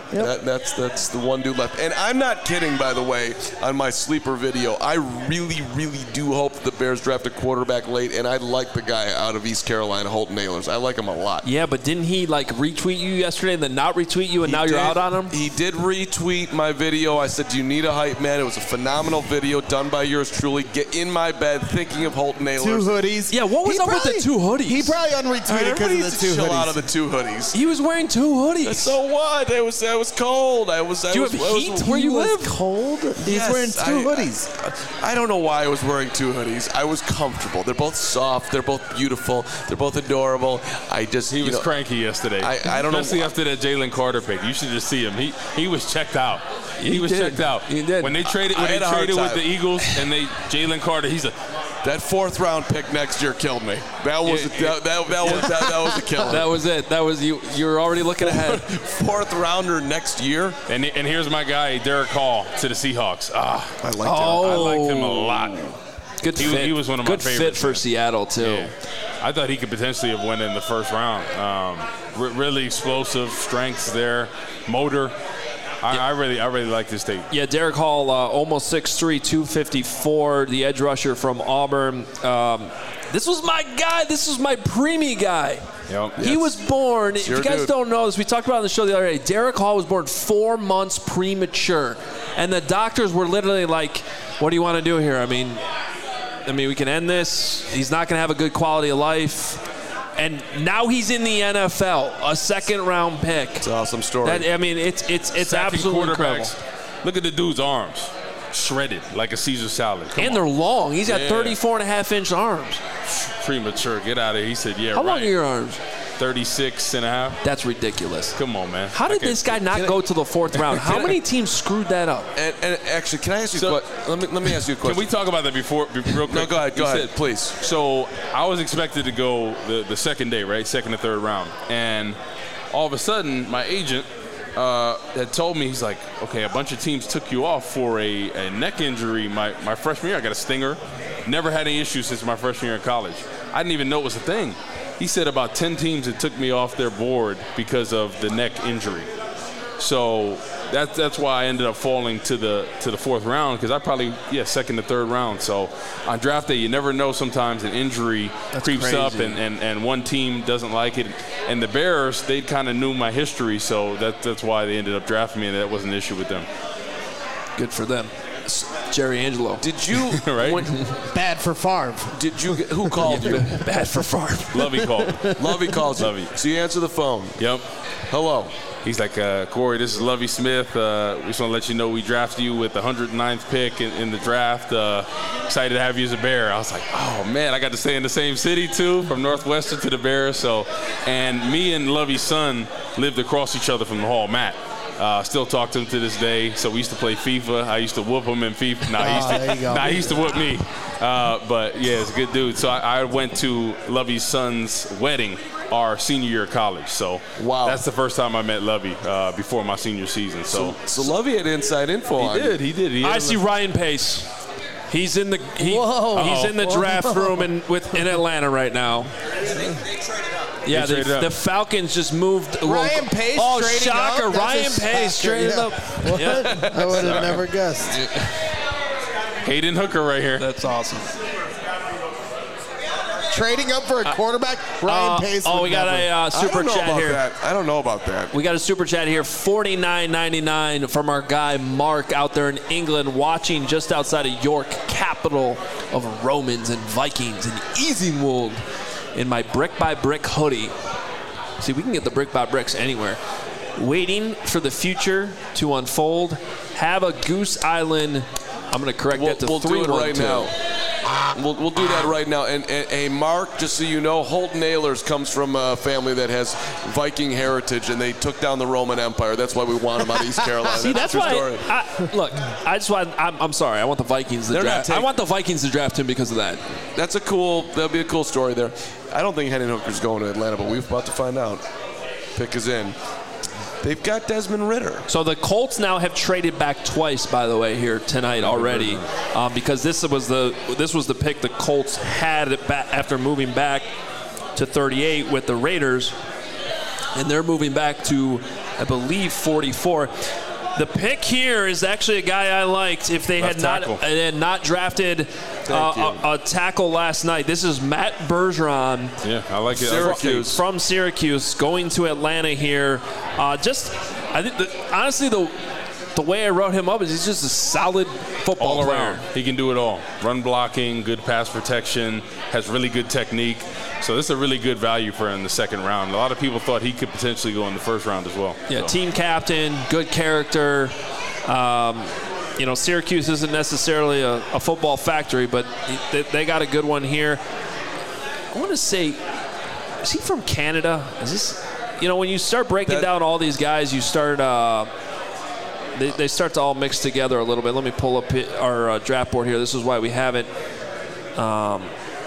Yep. That, that's that's the one dude left. And I'm not kidding, by the way, on my sleeper video. I really, really do hope that the Bears draft a quarterback late, and I like the guy out of East Carolina, Holton Ahlers. I like him a lot. Yeah, but didn't he, like, retweet you yesterday and then not retweet you, and He now you're did- out on him? He did retweet my video. I said, do you need a hype man? It was a phenomenal video done by yours truly. Get in my bed thinking of Holton Ahlers. Two hoodies. Yeah, what was He up with probably- the two hoodies? He probably unretweeted because Everybody of needs the to two chill hoodies. out of the two hoodies. He was wearing two hoodies. So what? It was, it was cold. I was, I Do you was, have I was- heat where you He was live? cold. He's Yes, wearing two I- hoodies. I, I don't know why I was wearing two hoodies. I was comfortable. They're both soft. They're both beautiful. They're both adorable. I just, He you was know, cranky yesterday. I- I don't know Especially why. after that Jalen Carter pick. You should just see him. He he was checked out. He, He was did. checked out. He did. When they traded I when had they a hard traded with time. the Eagles and they Jalen Carter, he's a that fourth round pick next year killed me. That was Yeah, a, that, that, that was that, that was a killer. That was it. That was you. You were already looking ahead. Fourth rounder next year. and and here's my guy Derek Hall to the Seahawks. Ah, I like Oh. I liked him a lot. Good He- fit. he was one of my Good fit favorites, for man. Seattle too. Yeah. I thought he could potentially have won in the first round. Um, re- really explosive strengths there, motor. I, I really, I really like this tape. Yeah, Derek Hall, uh, almost six three, two fifty-four, the edge rusher from Auburn. Um, this was my guy. This was my preemie guy. Yep. He was born, if your you guys dude. don't know this, we talked about it on the show the other day. Derek Hall was born four months premature. And the doctors were literally like, what do you want to do here? I mean, I mean, we can end this. He's not going to have a good quality of life. And now he's in the N F L, a second round pick. It's an awesome story. That, I mean, it's it's it's Sacking absolutely incredible. quarterbacks. Look at the dude's arms, shredded like a Caesar salad. Come And on. they're long. He's got Yeah. thirty-four and a half inch arms. Premature. Get out of here. He said, yeah, How right. long are your arms? thirty-six and a half. That's ridiculous. Come on, man. How I did can't- this guy not Can I- go to the fourth round? How Can I- many teams screwed that up? and, and actually, can I ask you? So- a que- let me let me ask you a Can question. we talk about that before, be- real quick? No, go ahead. Go You ahead, said- please. So I was expected to go the, the second day, right? Second and third round. And all of a sudden, my agent uh, had told me, he's like, okay, a bunch of teams took you off for a, a neck injury my, my freshman year. I got a stinger. Never had any issues since my freshman year in college. I didn't even know it was a thing. He said about ten teams that took me off their board because of the neck injury. So that's that's why I ended up falling to the to the fourth round, because I probably yeah second to third round. So on draft day, you never know. Sometimes an injury That's creeps crazy. up, and, and, and one team doesn't like it. And the Bears, they kind of knew my history, so that that's why they ended up drafting me, and that was an issue with them. Good for them. S- Jerry Angelo. Did you? Right? when- Bad for Favre. did you? Who called you? Bad for Favre. Lovey called. Lovey calls you. Lovey. So you answer the phone. Yep. Hello. He's like, uh, Corey, this is Lovey Smith. Uh, we just want to let you know we drafted you with the one hundred ninth pick in, in the draft. Uh, excited to have you as a Bear. I was like, oh, man, I got to stay in the same city, too, from Northwestern to the Bears. So, and me and Lovey's son lived across each other from the hall, Matt. Uh, still talk to him to this day. So we used to play FIFA. I used to whoop him in FIFA. Nah, he used Oh, there you to, go. nah, he used to whoop me. Uh, but, yeah, it's a good dude. So I, I went to Lovey's son's wedding our senior year of college. So Wow. that's the first time I met Lovey uh, before my senior season. So, So Lovey had inside info on he you. did, he did. He I had see a- Ryan Pace. He's in the he, Whoa. he's in the Whoa. draft room in with in Atlanta right now. Yeah, They the, traded up. the Falcons just moved. Ryan Pace Oh, trading shocker! up? That's Ryan a Pace shocker, traded yeah. up. What? Yeah, I would have never guessed. Hayden Hooker right here. that's awesome. Trading up for a quarterback, Ryan Uh, Pace. oh, would we got never. a uh, I super don't know chat about here. that. I don't know about that. We got a super chat here, forty-nine ninety-nine from our guy Mark out there in England, watching just outside of York, capital of Romans and Vikings, in Easingwold, in my brick by brick hoodie. See, we can get the brick by bricks anywhere. Waiting for the future to unfold. Have a Goose Island. I'm going to correct We'll, that to we'll do three it one right two. now. We'll, we'll do that right now. And, and hey, Mark, just so you know, Holton Ahlers comes from a family that has Viking heritage, and they took down the Roman Empire. That's why we want him out of East Carolina. See, that's a true why. story. I, look, I just want. I'm, I'm sorry. I want the Vikings to They're not draft. I taking- want the Vikings to draft him because of that. That's a cool. That'll be a cool story there. I don't think Hendon Hooker's going to Atlanta, but we're about to find out. Pick is in. They've got Desmond Ritter. So the Colts now have traded back twice, by the way, here tonight already, um, because this was the this was the pick the Colts had it back after moving back to thirty-eight with the Raiders, and they're moving back to I believe, forty-four. The pick here is actually a guy I liked if they had not, uh, had not drafted uh, a, a tackle last night. This is Matt Bergeron. Yeah, I like it. Syracuse. From Syracuse, going to Atlanta here. Uh, just, I think, the, honestly, the the way I wrote him up is he's just a solid football all player. around. He can do it all. Run blocking, good pass protection, has really good technique. So this is a really good value for him in the second round. A lot of people thought he could potentially go in the first round as well. Yeah, so. Team captain, good character. Um, you know, Syracuse isn't necessarily a, a football factory, but they, they got a good one here. I want to say, is he from Canada? Is this, you know, when you start breaking that, down all these guys, you start, uh, they, they start to all mix together a little bit. Let me pull up our uh, draft board here. This is why we have it. Um,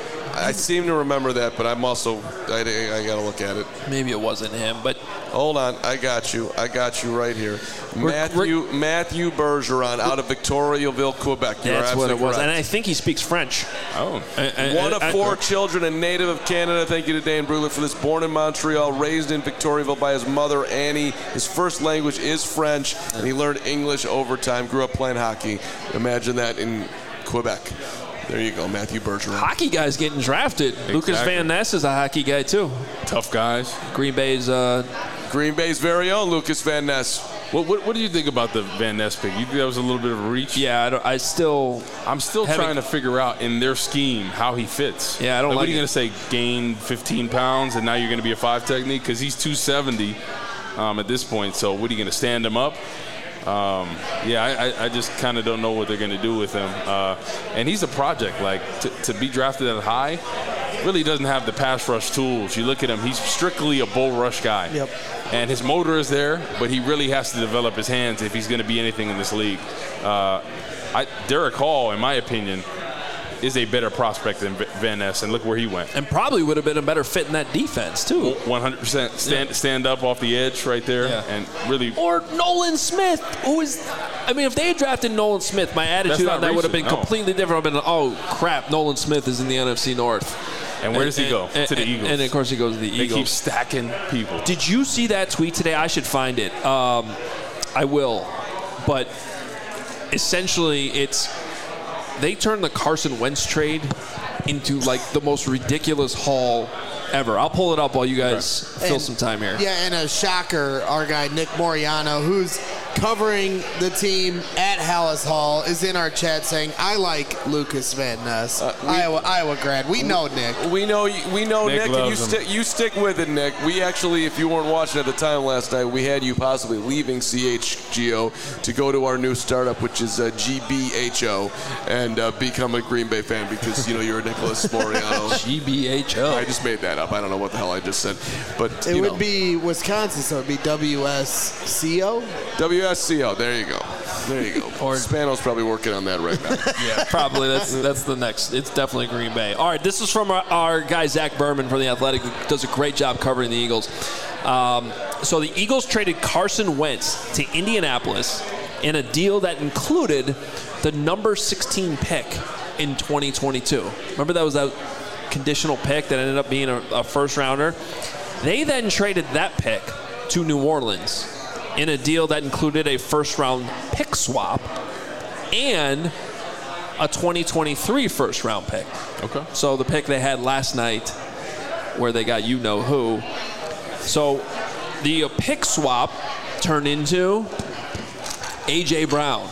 I seem to remember that, but I'm also, I, I got to look at it. Maybe it wasn't him, but. Hold on. I got you. I got you right here. We're, Matthew we're, Matthew Bergeron out of Victoriaville, Quebec. You're that's what it was. Correct. And I think he speaks French. Oh. I, I, One I, of four I, children, a native of Canada. Thank you to Dane Brugler for this. Born in Montreal, raised in Victoriaville by his mother, Annie. His first language is French, and he learned English over time. Grew up playing hockey. Imagine that in Quebec. There you go, Matthew Bergeron. Hockey guys getting drafted. Exactly. Lucas Van Ness is a hockey guy, too. Tough guys. Green Bay's uh, Green Bay's very own Lucas Van Ness. What, what, what do you think about the Van Ness pick? You think that was a little bit of a reach? Yeah, I, don't, I still... I'm still having, trying to figure out in their scheme how he fits. Yeah, I don't like, like What are you going to say, gain fifteen pounds and now you're going to be a five technique? Because he's two seventy um, at this point. So what are you going to stand him up? Um, yeah, I, I just kind of don't know what they're going to do with him. Uh, and he's a project. Like, to, to be drafted that high really doesn't have the pass rush tools. You look at him, he's strictly a bull rush guy. Yep. And his motor is there, but he really has to develop his hands if he's going to be anything in this league. Uh, I, Derek Hall, in my opinion, is a better prospect than Van Ness, and look where he went. And probably would have been a better fit in that defense, too. one hundred percent. Stand, yeah. stand up off the edge right there, yeah. and really. Or Nolan Smith, who is, I mean, if they had drafted Nolan Smith, my attitude on that recent. would have been no. completely different. I've been, oh, crap, Nolan Smith is in the N F C North. And where does he go? And, to the and, Eagles. And, of course, he goes to the they Eagles. They keep stacking people. Did you see that tweet today? I should find it. Um, I will. But essentially, it's they turned the Carson Wentz trade into, like, the most ridiculous haul ever. I'll pull it up while you guys right. fill and, some time here. Yeah, and a shocker, our guy Nick Moriano, who's covering the team at Hallis Hall, is in our chat saying, "I like Lucas Van Ness, uh, we, Iowa, Iowa grad." We know Nick. We know we know Nick, Nick and you stick you stick with it, Nick. We actually, if you weren't watching at the time last night, we had you possibly leaving C H G O to go to our new startup, which is uh, G B H O, and uh, become a Green Bay fan because you know you're a Nicholas Moriano. G B H O. I just made that up. I don't know what the hell I just said, but it you would know. be Wisconsin, so it'd be W S C O. W S C O. There you go. There you go. Or Spano's probably working on that right now. Yeah, probably. That's that's the next. It's definitely Green Bay. All right, this is from our, our guy Zach Berman from The Athletic, who does a great job covering the Eagles. Um, so the Eagles traded Carson Wentz to Indianapolis in a deal that included the number sixteen pick in twenty twenty-two. Remember that was that conditional pick that ended up being a, a first rounder? They then traded that pick to New Orleans in a deal that included a first-round pick swap and a twenty twenty-three first-round pick. Okay. So the pick they had last night where they got you-know-who. So the pick swap turned into A J. Brown.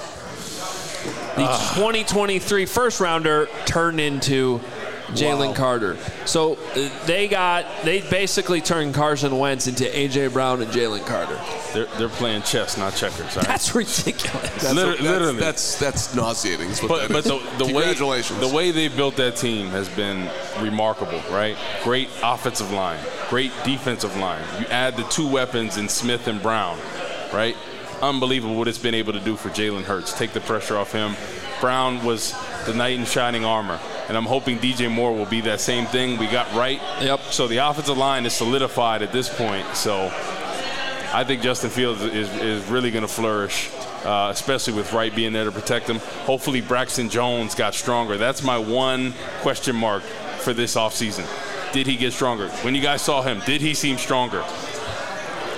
The uh. twenty twenty-three first-rounder turned into Jalen wow. Carter. So uh, they got they basically turned Carson Wentz into A J. Brown and Jalen Carter. They're they're playing chess, not checkers. Right? That's ridiculous. That's, Literally, that's, literally. that's that's nauseating. Is what but that but is. the, the Congratulations. way the way they built that team has been remarkable, right? Great offensive line, great defensive line. You add the two weapons in Smith and Brown, right? Unbelievable what it's been able to do for Jalen Hurts. Take the pressure off him. Brown was the knight in shining armor. And I'm hoping D J Moore will be that same thing we got right. Yep. So the offensive line is solidified at this point. So I think Justin Fields is, is really going to flourish, uh, especially with Wright being there to protect him. Hopefully Braxton Jones got stronger. That's my one question mark for this offseason. Did he get stronger? When you guys saw him, did he seem stronger?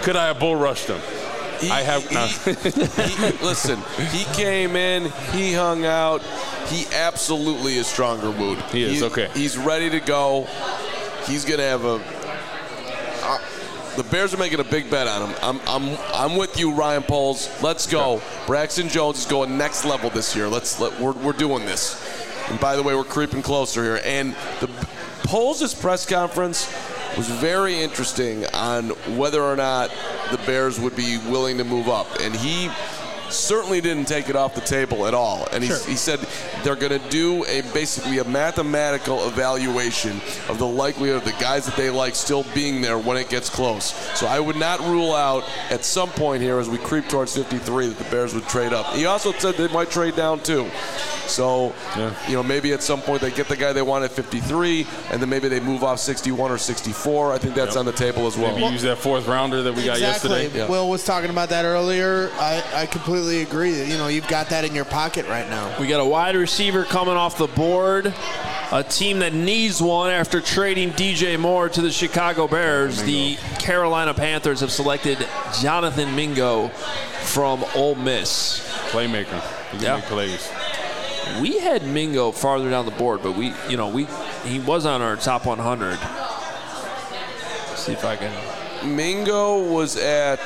Could I have bull rushed him? He, I have he, not. he, listen, he came in, he hung out. He absolutely is stronger mood. He is, he, okay. He's ready to go. He's going to have a uh, – the Bears are making a big bet on him. I'm I'm I'm with you, Ryan Poles. Let's go. Braxton Jones is going next level this year. Let's let we're we're doing this. And by the way, we're creeping closer here. And the Poles' press conference was very interesting on whether or not the Bears would be willing to move up. And he certainly didn't take it off the table at all. And he, sure. he said they're going to do a basically a mathematical evaluation of the likelihood of the guys that they like still being there when it gets close. So I would not rule out at some point here as we creep towards fifty-three that the Bears would trade up. He also said they might trade down too. So, yeah. you know, maybe at some point they get the guy they want at fifty-three, and then maybe they move off sixty-one or sixty-four. I think that's yep. on the table as well. Maybe well, use that fourth rounder that we exactly. got yesterday. Yeah. Will was talking about that earlier. I, I completely agree that, you know, you've got that in your pocket right now. We got a wide receiver coming off the board, a team that needs one after trading D J Moore to the Chicago Bears. Mingo. The Carolina Panthers have selected Jonathan Mingo from Ole Miss. Playmaker. He can yeah. make plays. We had Mingo farther down the board, but we, you know, we he was on our top one hundred. Let's see if I can. Mingo was at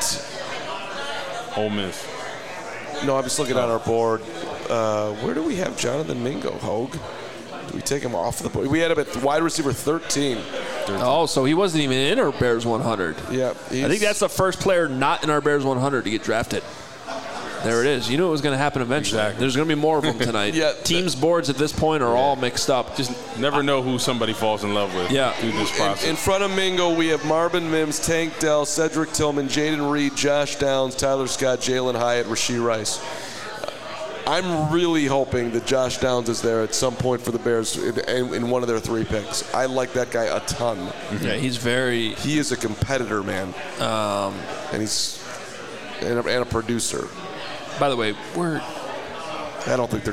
Ole Miss. No, I'm just looking at our board. Uh, where do we have Jonathan Mingo, Hogue? Do we take him off the board? We had him at wide receiver thirteen. Oh, so he wasn't even in our Bears one hundred. Yeah. I think that's the first player not in our Bears one hundred to get drafted. There it is. You knew it was going to happen eventually. Exactly. There's going to be more of them tonight. yeah, Teams' boards at this point are yeah. all mixed up. Just never know who somebody falls in love with yeah. through this process. In, in front of Mingo, we have Marvin Mims, Tank Dell, Cedric Tillman, Jaden Reed, Josh Downs, Tyler Scott, Jalen Hyatt, Rashee Rice. I'm really hoping that Josh Downs is there at some point for the Bears in, in one of their three picks. I like that guy a ton. Mm-hmm. Yeah, he's very... He is a competitor, man. Um, and he's and a, and a producer. By the way, we're... I don't think they're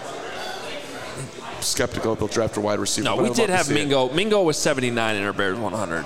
skeptical that they'll draft a wide receiver. No, we did have Mingo. It. Mingo was seventy-nine in our Bears one hundred.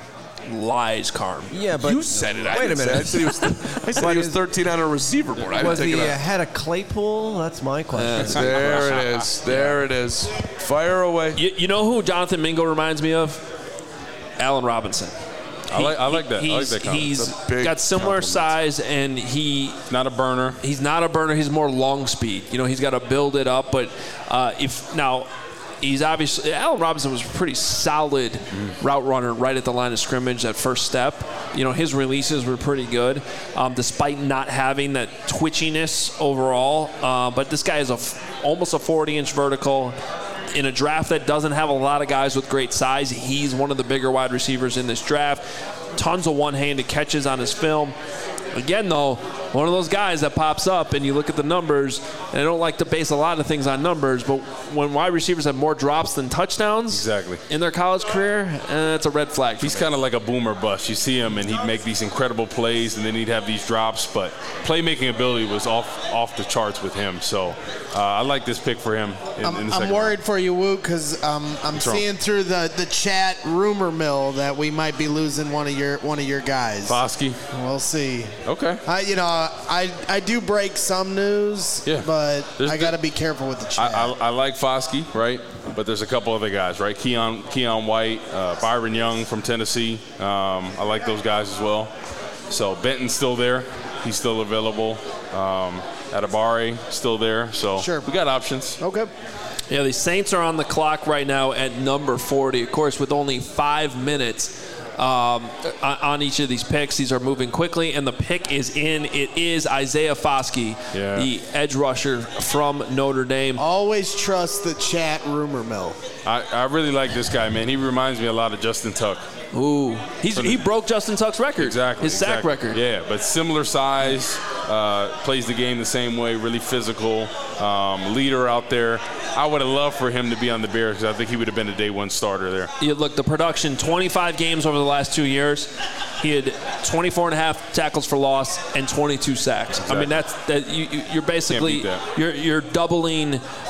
Lies, Carm. Yeah, but you said it. I wait a minute. I said he was, I said he was thirteen on a receiver board. I was didn't take he it ahead of Claypool? That's my question. Uh, there it is. There it is. Fire away. You, you know who Jonathan Mingo reminds me of? Allen Robinson. I like, I like that. I like that comment. He's got similar compliment. size, and he not a burner. He's not a burner. He's more long speed. You know, he's got to build it up. But uh, if now, he's obviously Allen Robinson was a pretty solid mm. route runner right at the line of scrimmage. That first step, you know, his releases were pretty good, um, despite not having that twitchiness overall. Uh, but this guy is a f- almost a forty-inch vertical. In a draft that doesn't have a lot of guys with great size, he's one of the bigger wide receivers in this draft. Tons of one-handed catches on his film. Again, though, one of those guys that pops up and you look at the numbers, and I don't like to base a lot of things on numbers, but when wide receivers have more drops than touchdowns exactly. in their college career, eh, it's a red flag. He's kind of like a boomer bust. You see him, and he'd make these incredible plays, and then he'd have these drops, but playmaking ability was off off the charts with him. So uh, I like this pick for him in, I'm, in the second I'm worried round. for you, Woot, because um, I'm What's seeing wrong? through the, the chat rumor mill that we might be losing one of your one of your guys. Foskey. We'll see. Okay. I, you know, I I do break some news, yeah. but there's I got to be careful with the chat. I, I, I like Foskey, right? But there's a couple other guys, right? Keon Keon White, uh, Byron Young from Tennessee. Um, I like those guys as well. So Benton's still there. He's still available. Um, Adibare still there. So sure. we got options. Okay. Yeah, the Saints are on the clock right now at number forty. Of course, with only five minutes um, on each of these picks. These are moving quickly, and the pick is in. It is Isaiah Foskey, yeah. the edge rusher from Notre Dame. Always trust the chat rumor mill. I, I really like this guy, man. He reminds me a lot of Justin Tuck. Ooh, he's, he broke Justin Tuck's record. Exactly. His sack exactly. record. Yeah, but similar size, uh, plays the game the same way, really physical, um, leader out there. I would have loved for him to be on the Bears because I think he would have been a day one starter there. Yeah, look, the production, twenty-five games over the last two years. He had twenty-four and a half tackles for loss and twenty-two sacks. Exactly. I mean, that's that. You, you're basically that. you're you're doubling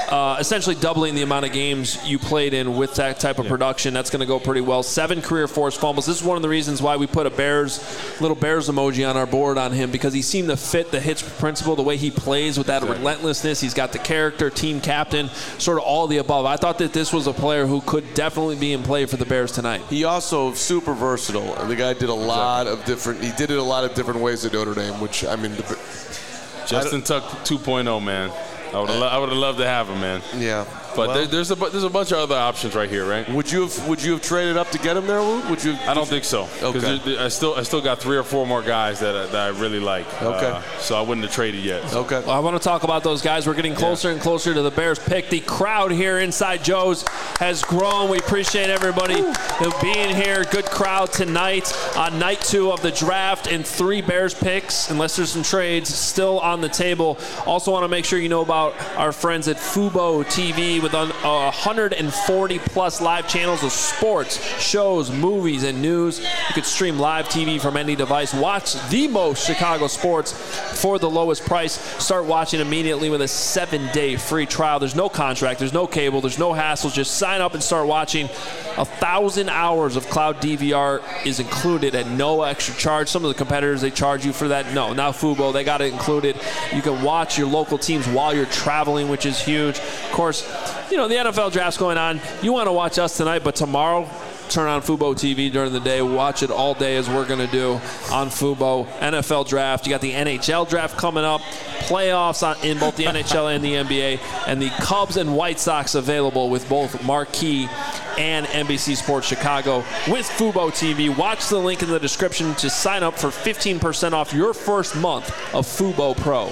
uh, essentially doubling the amount of games you played in with that type of Yeah. production. That's going to go pretty well. Seven career forced fumbles. This is one of the reasons why we put a Bears, little Bears emoji on our board on him, because he seemed to fit the Hitch principle, the way he plays with that Exactly. relentlessness. He's got the character, team captain, sort of all the above. I thought that this was a player who could definitely be in play for the Bears tonight. He also super versatile. The guy did a lot of different. He did it a lot of different ways at Notre Dame, which I mean, the, Justin Tuck two point oh, man. I would have I would have loved to have him, man. yeah. But Well, there, there's a bu- there's a bunch of other options right here, right? would you have would you have traded up to get him there, Woot? Would you? I don't think so. Because Okay. I still I still got three or four more guys that I, that I really like. Okay. Uh, so I wouldn't have traded yet. Okay. Well, I want to talk about those guys. We're getting closer and closer to the Bears pick. The crowd here inside Joe's has grown. We appreciate everybody being here. Good crowd tonight on night two of the draft, and three Bears picks, unless there's some trades, still on the table. Also want to make sure you know about our friends at Fubo T V with un- uh, one hundred forty plus live channels of sports, shows, movies, and news. You could stream live T V from any device. Watch the most Chicago sports for the lowest price. Start watching immediately with a seven-day free trial. There's no contract. There's no cable. There's no hassle. Just sign up and start watching. A thousand hours of cloud D V R is included at no extra charge. Some of the competitors, they charge you for that. No, now Fubo, they got it included. You can watch your local teams while you're traveling, which is huge. Of course, you know, the N F L draft's going on. You want to watch us tonight, but tomorrow, turn on Fubo T V during the day. Watch it all day, as we're going to do on Fubo. N F L draft. You got the N H L draft coming up. Playoffs on, in both the N H L and the N B A. And the Cubs and White Sox available with both Marquee and N B C Sports Chicago with Fubo T V. Watch the link in the description to sign up for fifteen percent off your first month of Fubo Pro.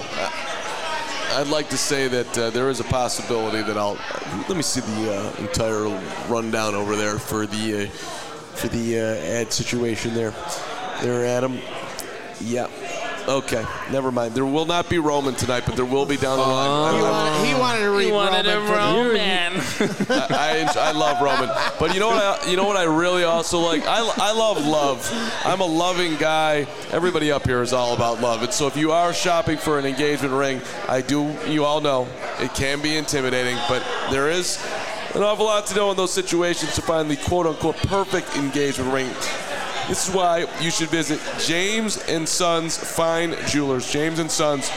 I'd like to say that uh, there is a possibility that I'll. Let me see the uh, entire rundown over there for the uh, for the uh, ad situation there. There, Adam. Yeah. Okay. Never mind. There will not be Roman tonight, but there will be down the line. He I, wanted, he wanted to read He wanted Roman. a for the- Roman. I, I, I love Roman, but you know what? I, you know what I really also like. I, I love love. I'm a loving guy. Everybody up here is all about love. And so if you are shopping for an engagement ring, I do. You all know it can be intimidating, but there is an awful lot to know in those situations to find the quote-unquote perfect engagement ring. This is why you should visit James and Sons Fine Jewelers. James and Sons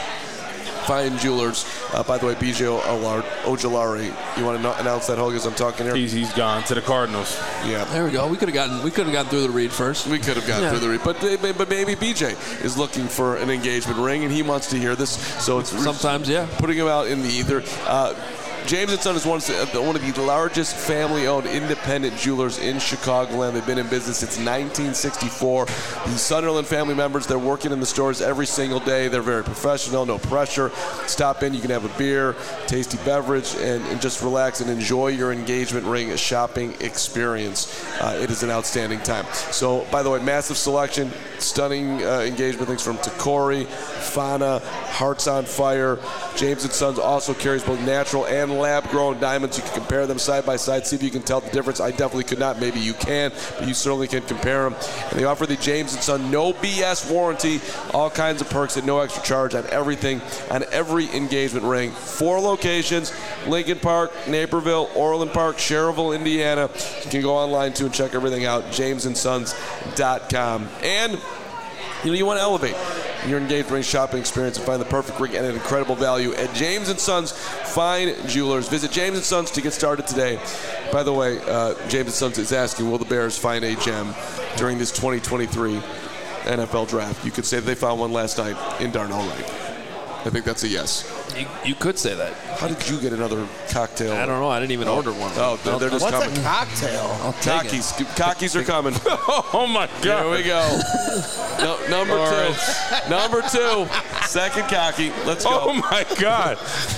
Fine Jewelers. Uh, by the way, B J Ojolari, you want to no- announce that, Hogue, as I'm talking here? He's, he's gone to the Cardinals. Yeah. There we go. We could have gotten we could have gotten through the read first. We could have gotten Yeah. through the read, but but maybe B J is looking for an engagement ring and he wants to hear this, so it's Sometimes, yeah. putting him out in the ether. Uh, James and Son is one of, the, one of the largest family-owned independent jewelers in Chicagoland. They've been in business since nineteen sixty-four. The Sunderland family members, they're working in the stores every single day. They're very professional, no pressure. Stop in, you can have a beer, tasty beverage, and, and just relax and enjoy your engagement ring shopping experience. Uh, it is an outstanding time. So, by the way, massive selection, stunning uh, engagement things from Tacori, Fana, Hearts on Fire. James and Sons also carries both natural and lab-grown diamonds. You can compare them side by side, see if you can tell the difference. I definitely could not. Maybe you can, but you certainly can compare them. And they offer the James and Son no B S warranty, all kinds of perks at no extra charge on everything, on every engagement ring. Four locations: Lincoln Park, Naperville, Orland Park, Cherville, Indiana. You can go online too and check everything out. james and sons dot com. And you know, you want to elevate your engagement ring shopping experience and find the perfect ring at an incredible value at James and Sons Fine Jewelers. Visit James and Sons to get started today. By the way, uh, James and Sons is asking, will the Bears find a gem during this twenty twenty-three N F L draft? You could say that they found one last night in Darnell Wright. I think that's a yes. You, you could say that. How did you get another cocktail? I don't know. I didn't even order one. Oh, they're, they're just What's coming. a cocktail? I'll take it. Cockies. Cockies are coming. Oh, my God. Here we go. No, number All two. right. Number two. Second cocky. Let's go. Oh, my God.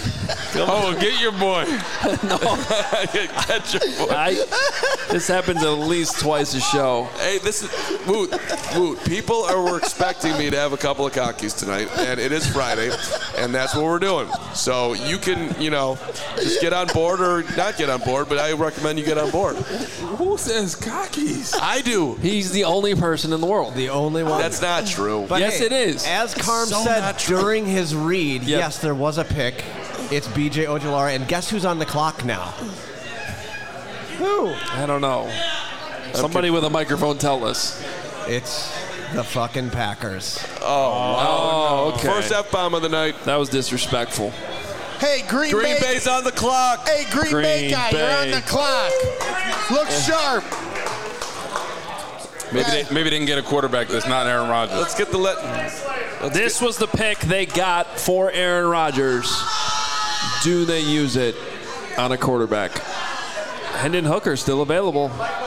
Oh, get your boy. Get your boy. I, this happens at least twice a show. Hey, this is Woot. Woot. People are were expecting me to have a couple of cockies tonight, and it is Friday, and that's what we're doing. So you can, you know, just get on board or not get on board, but I recommend you get on board. Who says cockies? I do. He's the only person in the world. The only one. That's not true. But Yes, hey, it is. As Carm so said not true. during his read, Yep. yes, there was a pick. It's B J Ojulari, and guess who's on the clock now? Who? I don't know. Somebody with a microphone tell us. It's the fucking Packers. Oh, okay. First F-bomb of the night. That was disrespectful. Hey, Green, Green Bay. Bay's on the clock. Hey, Green, Green Bay guy, Bay. you're on the clock. Look sharp. Maybe they, maybe they can get a quarterback that's not Aaron Rodgers. Let's get the let. Let's This get, was the pick they got for Aaron Rodgers. Do they use it on a quarterback? Hendon Hooker still available.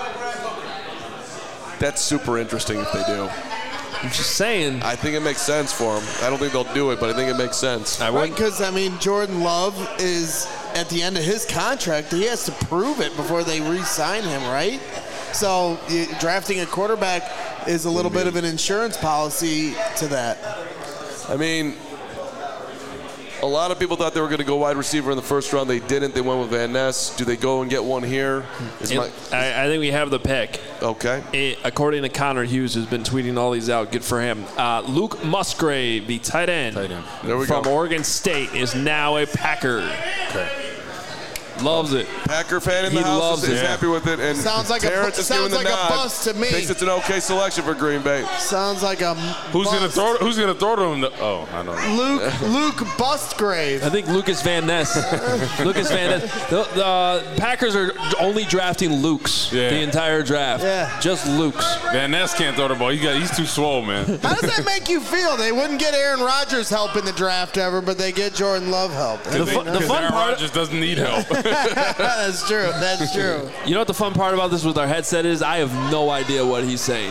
That's super interesting if they do. I'm just saying. I think it makes sense for them. I don't think they'll do it, but I think it makes sense. I Right, wouldn't. because, I mean, Jordan Love is at the end of his contract. He has to prove it before they re-sign him, right? So you, drafting a quarterback is a little bit of an insurance policy to that. I mean, a lot of people thought they were going to go wide receiver in the first round. They didn't. They went with Van Ness. Do they go and get one here? Is It- my, I, I think we have the pick. okay. It, according to Connor Hughes, who's been tweeting all these out, good for him. Uh, Luke Musgrave, the tight end, Tight end. There we from go. Oregon State, is now a Packer. Okay. Loves it. Packer fan in the He house loves is, is it. happy with it. And Sounds like a Terrence bu- is giving sounds the like a nod. bust to me. Thinks it's an okay selection for Green Bay. Sounds like a Who's bust. gonna throw? Who's gonna throw to him? The, oh, I don't know. Luke Luke Bustgrave. I think Lucas Van Ness. Lucas Van Ness. The, the uh, Packers are only drafting Lukes Yeah. the entire draft. Yeah. Just Lukes. Van Ness can't throw the ball. He got. He's too swole, man. How does that make you feel? They wouldn't get Aaron Rodgers help in the draft ever, but they get Jordan Love help. The, fu- the fun Aaron part. Rodgers doesn't need help. That's true. That's true. You know what the fun part about this with our headset is? I have no idea what he's saying.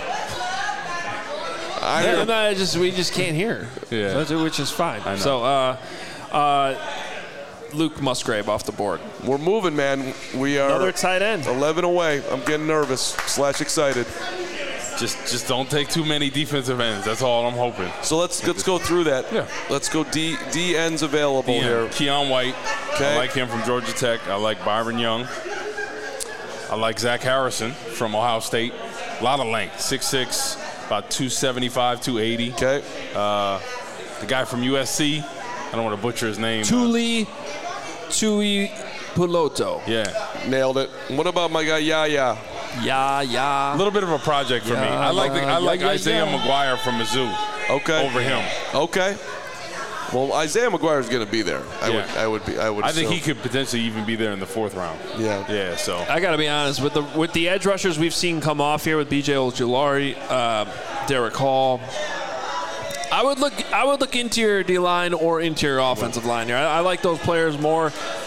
I Yeah, hear no, I just we just can't hear. Yeah. That's- which is fine. I know. So, uh, uh, Luke Musgrave off the board. We're moving, man. We are Another tight end. eleven away. I'm getting nervous slash excited. just, just don't take too many defensive ends. That's all I'm hoping. So let's let's go through that. Yeah. Let's go D D ends available Yeah. here. Keon White. Okay. I like him from Georgia Tech. I like Byron Young. I like Zach Harrison from Ohio State. A lot of length. six six, about two seventy-five, two eighty. Okay. Uh, the guy from U S C. I don't want to butcher his name. Tuli Tui Puloto. Yeah. Nailed it. What about my guy Yaya? Yeah, yeah. A little bit of a project for me. Yeah, I like the, I yeah, like yeah, Isaiah yeah. McGuire from Mizzou Okay. over him. Okay. Well, Isaiah McGuire is going to be there. I Yeah. would. I would be. I would. I think he assume. could potentially even be there in the fourth round. Yeah. Yeah. So I got to be honest with the with the edge rushers we've seen come off here with B J Ojulari, uh, Derek Hall. I would look. I would look interior D line or interior offensive line here. I, I like those players more.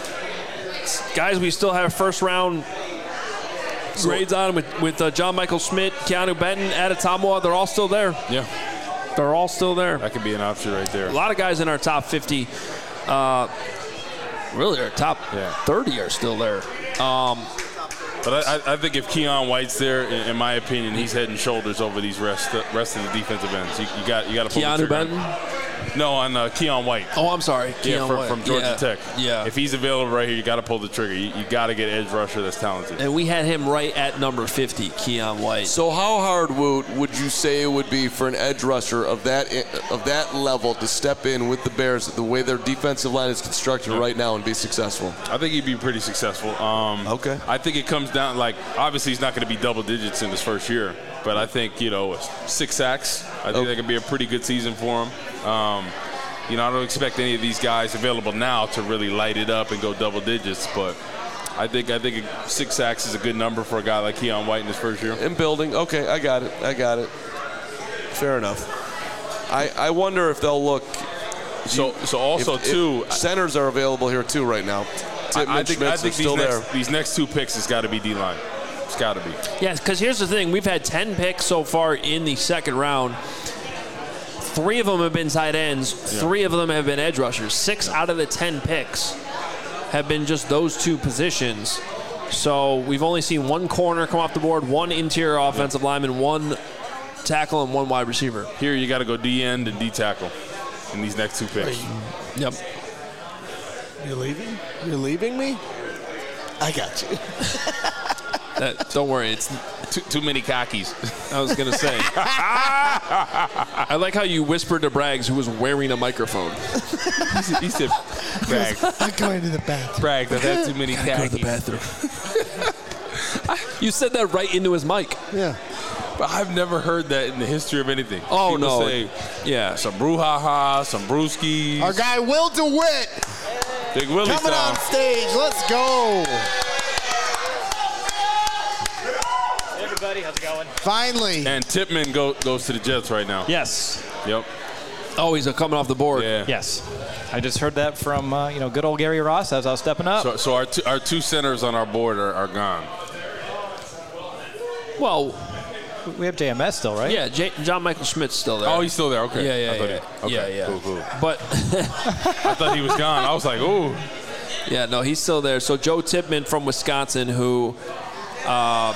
Guys, we still have first round grades on with with uh, John Michael Schmidt, Keanu Benton, Adetomoa. They're all still there. yeah, They're all still there. that could be an option right there. A lot of guys in our top fifty, uh, really our top Yeah. thirty are still there. Um, But I, I- I think if Keon White's there, in, in my opinion, he's head and shoulders over these rest rest of the defensive ends. You, you got you got to pull the Keanu trigger. Benton. No, on uh, Keon White. Oh, I'm sorry. Yeah, Keon from, White. from Georgia Yeah. Tech. Yeah. If he's available right here, you got to pull the trigger. You, you got to get edge rusher that's talented. And we had him right at number fifty, Keon White. So how hard would would you say it would be for an edge rusher of that of that level to step in with the Bears the way their defensive line is constructed right now and be successful? I think he'd be pretty successful. Um, Okay. I think it comes down, like, obviously he's not going to be double digits in his first year, but I think, you know, six sacks, I think Okay. that could be a pretty good season for him. Um, you know, I don't expect any of these guys available now to really light it up and go double digits, but I think I think six sacks is a good number for a guy like Keon White in his first year. In building, okay, I got it, I got it. Fair enough. I, I wonder if they'll look. So, so also, if, too, if centers are available here too right now. Tippmann, I, I think, Schmitz I are think still these, there. next, these next two picks has got to be D-line. It's got to be. Yes, because here's the thing. We've had ten picks so far in the second round. Three of them have been tight ends. Yeah. Three of them have been edge rushers. Six out of the ten picks have been just those two positions. So we've only seen one corner come off the board, one interior offensive lineman, one tackle, and one wide receiver. Here you got to go D-end and D-tackle in these next two picks. Yep. You're leaving? You're leaving me? I got you. That, don't worry. It's Too, too many khakis. I was gonna say. I like how you whispered to Braggs, who was wearing a microphone. he said, he said Braggs. I'm going to the bathroom. Braggs, I've had too many khakis. Go to the bathroom. You said that right into his mic. Yeah. But I've never heard that in the history of anything. Oh, People no. say Yeah. some brouhaha, some brewskis. Our guy Will DeWitt Big Willie coming sound. on stage. Let's go. Hey everybody, how's it going? Finally. And Tippmann go, goes to the Jets right now. Yes. Yep. Oh, he's coming off the board. Yeah. Yes. I just heard that from uh, you know good old Gary Ross as I was stepping up. So, so our, two, our two centers on our board are, are gone. Well, we have J M S still, right? yeah, J- John Michael Schmidt's still there. Oh, he's still there. Okay. Yeah, yeah, I thought yeah. He, okay. Yeah, yeah. Cool, cool. But, I thought he was gone. I was like, ooh. yeah, no, he's still there. So Joe Tippmann from Wisconsin, who uh,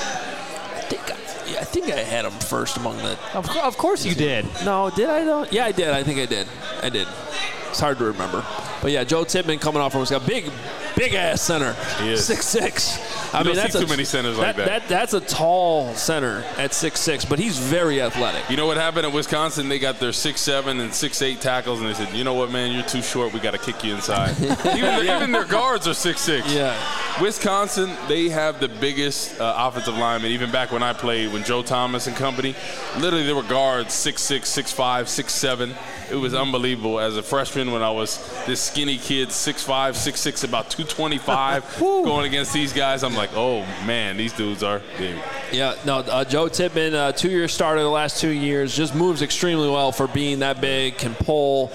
I think I, yeah, I think I had him first among the. Of, co- of course you did. No, did I though? Yeah, I did. I think I did. I did. It's hard to remember. But yeah, Joe Tippmann coming off from Wisconsin, big, big ass center. He is. six six. I You mean, don't that's see a, too many centers like that. that. That's a tall center at six six, but he's very athletic. You know what happened at Wisconsin? They got their six seven and six eight tackles, and they said, you know what, man, you're too short. We got to kick you inside. even, their, even their guards are six six. Yeah. Wisconsin, they have the biggest uh, offensive linemen. Even back when I played, when Joe Thomas and company, literally there were guards six six, six five, six seven. It was unbelievable. As a freshman, when I was this skinny kid, six five, six six, about two twenty-five, going against these guys, I'm like, oh, man, these dudes are big. Yeah, no, uh, Joe Tippmann, uh, two-year starter the last two years, just moves extremely well for being that big, can pull,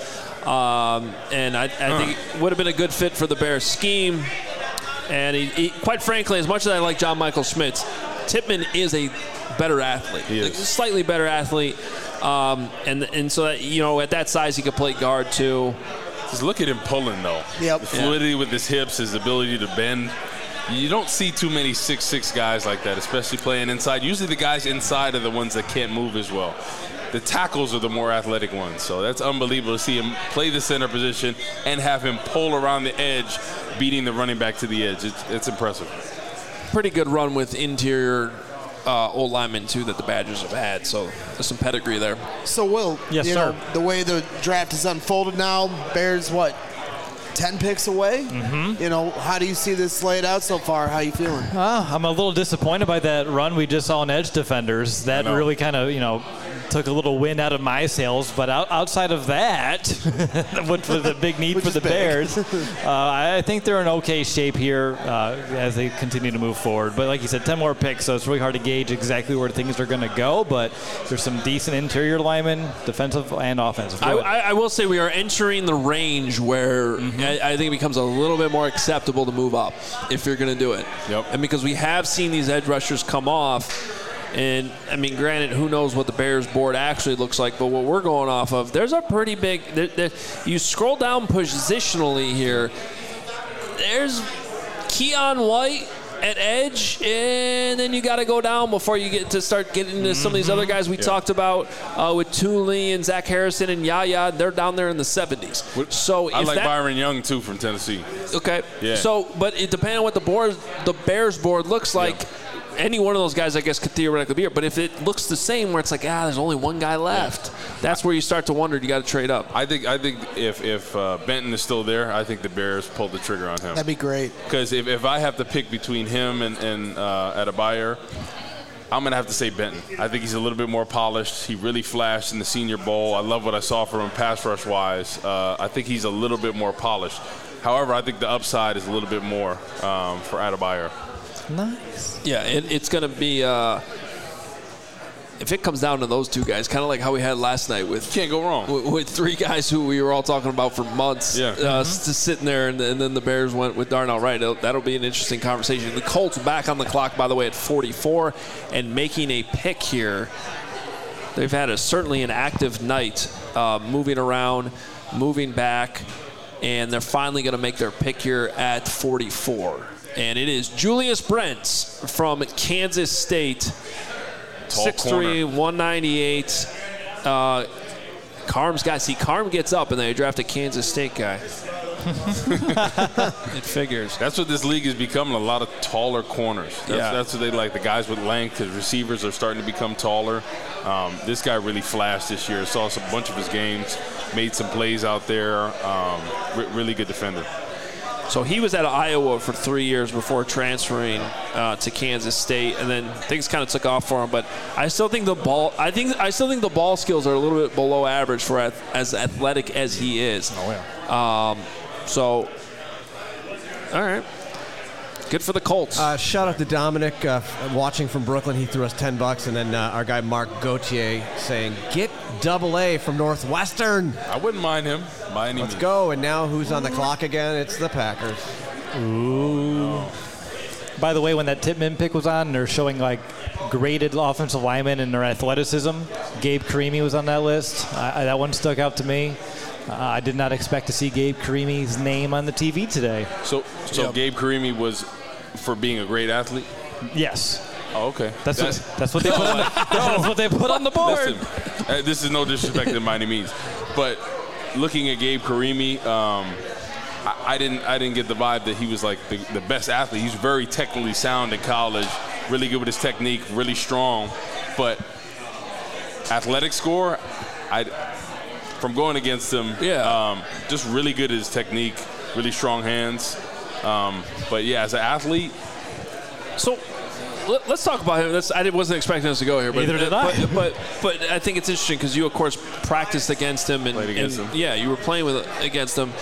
um, and I, I think it would have been a good fit for the Bears scheme. And he, he, quite frankly, as much as I like John Michael Schmitz, Tippmann is a better athlete, He is. like, slightly better athlete, um, and and so that, you know, at that size he could play guard too. Just look at him pulling, though. Yep. The fluidity with his hips, his ability to bend. You don't see too many six six guys like that, especially playing inside. Usually the guys inside are the ones that can't move as well. The tackles are the more athletic ones. So that's unbelievable to see him play the center position and have him pull around the edge, beating the running back to the edge. It's, it's impressive. Pretty good run with interior uh, old linemen, too, that the Badgers have had. So there's some pedigree there. So, Will, Yes, you sir. know, the way the draft is unfolded now, Bears, what, ten picks away? Mm-hmm. You know, how do you see this laid out so far? How you feeling? Uh, I'm a little disappointed by that run we just saw in edge defenders. That know. really kind of, you know, took a little wind out of my sails. But out, outside of that, what was the big need Which for is the big. Bears, uh, I think they're in okay shape here uh, as they continue to move forward. But like you said, ten more picks, so it's really hard to gauge exactly where things are going to go. But there's some decent interior linemen, defensive and offensive. I, Go I, I will say we are entering the range where Mm-hmm. I, I think it becomes a little bit more acceptable to move up if you're going to do it. Yep. And because we have seen these edge rushers come off, and I mean, granted, who knows what the Bears board actually looks like, but what we're going off of, there's a pretty big. There, there, you scroll down positionally here. There's Keon White at edge, and then you got to go down before you get to start getting into some of these other guys we Yeah. talked about uh, with Tooley and Zach Harrison and Yaya. They're down there in the seventies. So I if like that, Byron Young, too, from Tennessee. Okay. Yeah. So, but it depending on what the board, the Bears board looks like. Any one of those guys, I guess, could theoretically be here. But if it looks the same, where it's like, ah, there's only one guy left, that's where you start to wonder. You got to trade up. I think I think if if uh, Benton is still there, I think the Bears pulled the trigger on him. That'd be great. Because if, if I have to pick between him and, and uh, Adebayo, I'm going to have to say Benton. I think he's a little bit more polished. He really flashed in the Senior Bowl. I love what I saw from him pass rush-wise. Uh, I think he's a little bit more polished. However, I think the upside is a little bit more um, for Adebayo. Nice. Yeah, it, it's going to be. Uh, if it comes down to those two guys, kind of like how we had last night with Can't go wrong. with, with three guys who we were all talking about for months, Yeah. uh, Mm-hmm. just sitting there, and, and then the Bears went with Darnell Wright. It'll, that'll be an interesting conversation. The Colts back on the clock, by the way, at forty-four, and making a pick here. They've had a certainly an active night, uh, moving around, moving back, and they're finally going to make their pick here at forty-four. And it is Julius Brents from Kansas State, Tall six three, corner. one ninety-eight. Uh, Carm's guy. See, Carm gets up, and they draft a Kansas State guy. It figures. That's what this league is becoming, a lot of taller corners. That's, yeah. that's what they like, the guys with length. The receivers are starting to become taller. Um, this guy really flashed this year. Saw some bunch of his games, made some plays out there. Um, re- really good defender. So he was at Iowa for three years before transferring uh, to Kansas State, and then things kind of took off for him. But I still think the ball, I think, I still think the ball skills are a little bit below average for ath- as athletic as he is. Oh yeah. Um, so, all right. Good for the Colts. Uh, shout out to Dominic uh, watching from Brooklyn. He threw us ten bucks, and then uh, our guy Mark Gauthier saying, "Get double A from Northwestern." I wouldn't mind him by any Let's means. go. And now who's on the clock again? It's the Packers. Ooh. By the way, when that Tippmann pick was on, they're showing like graded offensive linemen and their athleticism. Gabe Carimi was on that list. I, I, that one stuck out to me. Uh, I did not expect to see Gabe Carimi's name on the T V today. So, so Yep. Gabe Carimi was for being a great athlete? Yes. Oh, okay. That's, That's, what, that's what they put on the, that's what they put on the board. Listen, uh, this is no disrespect to by any means, but looking at Gabe Carimi, um, I, I didn't I didn't get the vibe that he was like the, the best athlete. He's very technically sound in college, really good with his technique, really strong, but athletic score, I from going against him, Yeah. um, just really good at his technique, really strong hands. Um, but yeah, as an athlete, So let, let's talk about him. That's, I wasn't expecting us to go here, but Neither did I. But, but but I think it's interesting because you, of course, practiced against him and, Played against and him. yeah, you were playing with against him.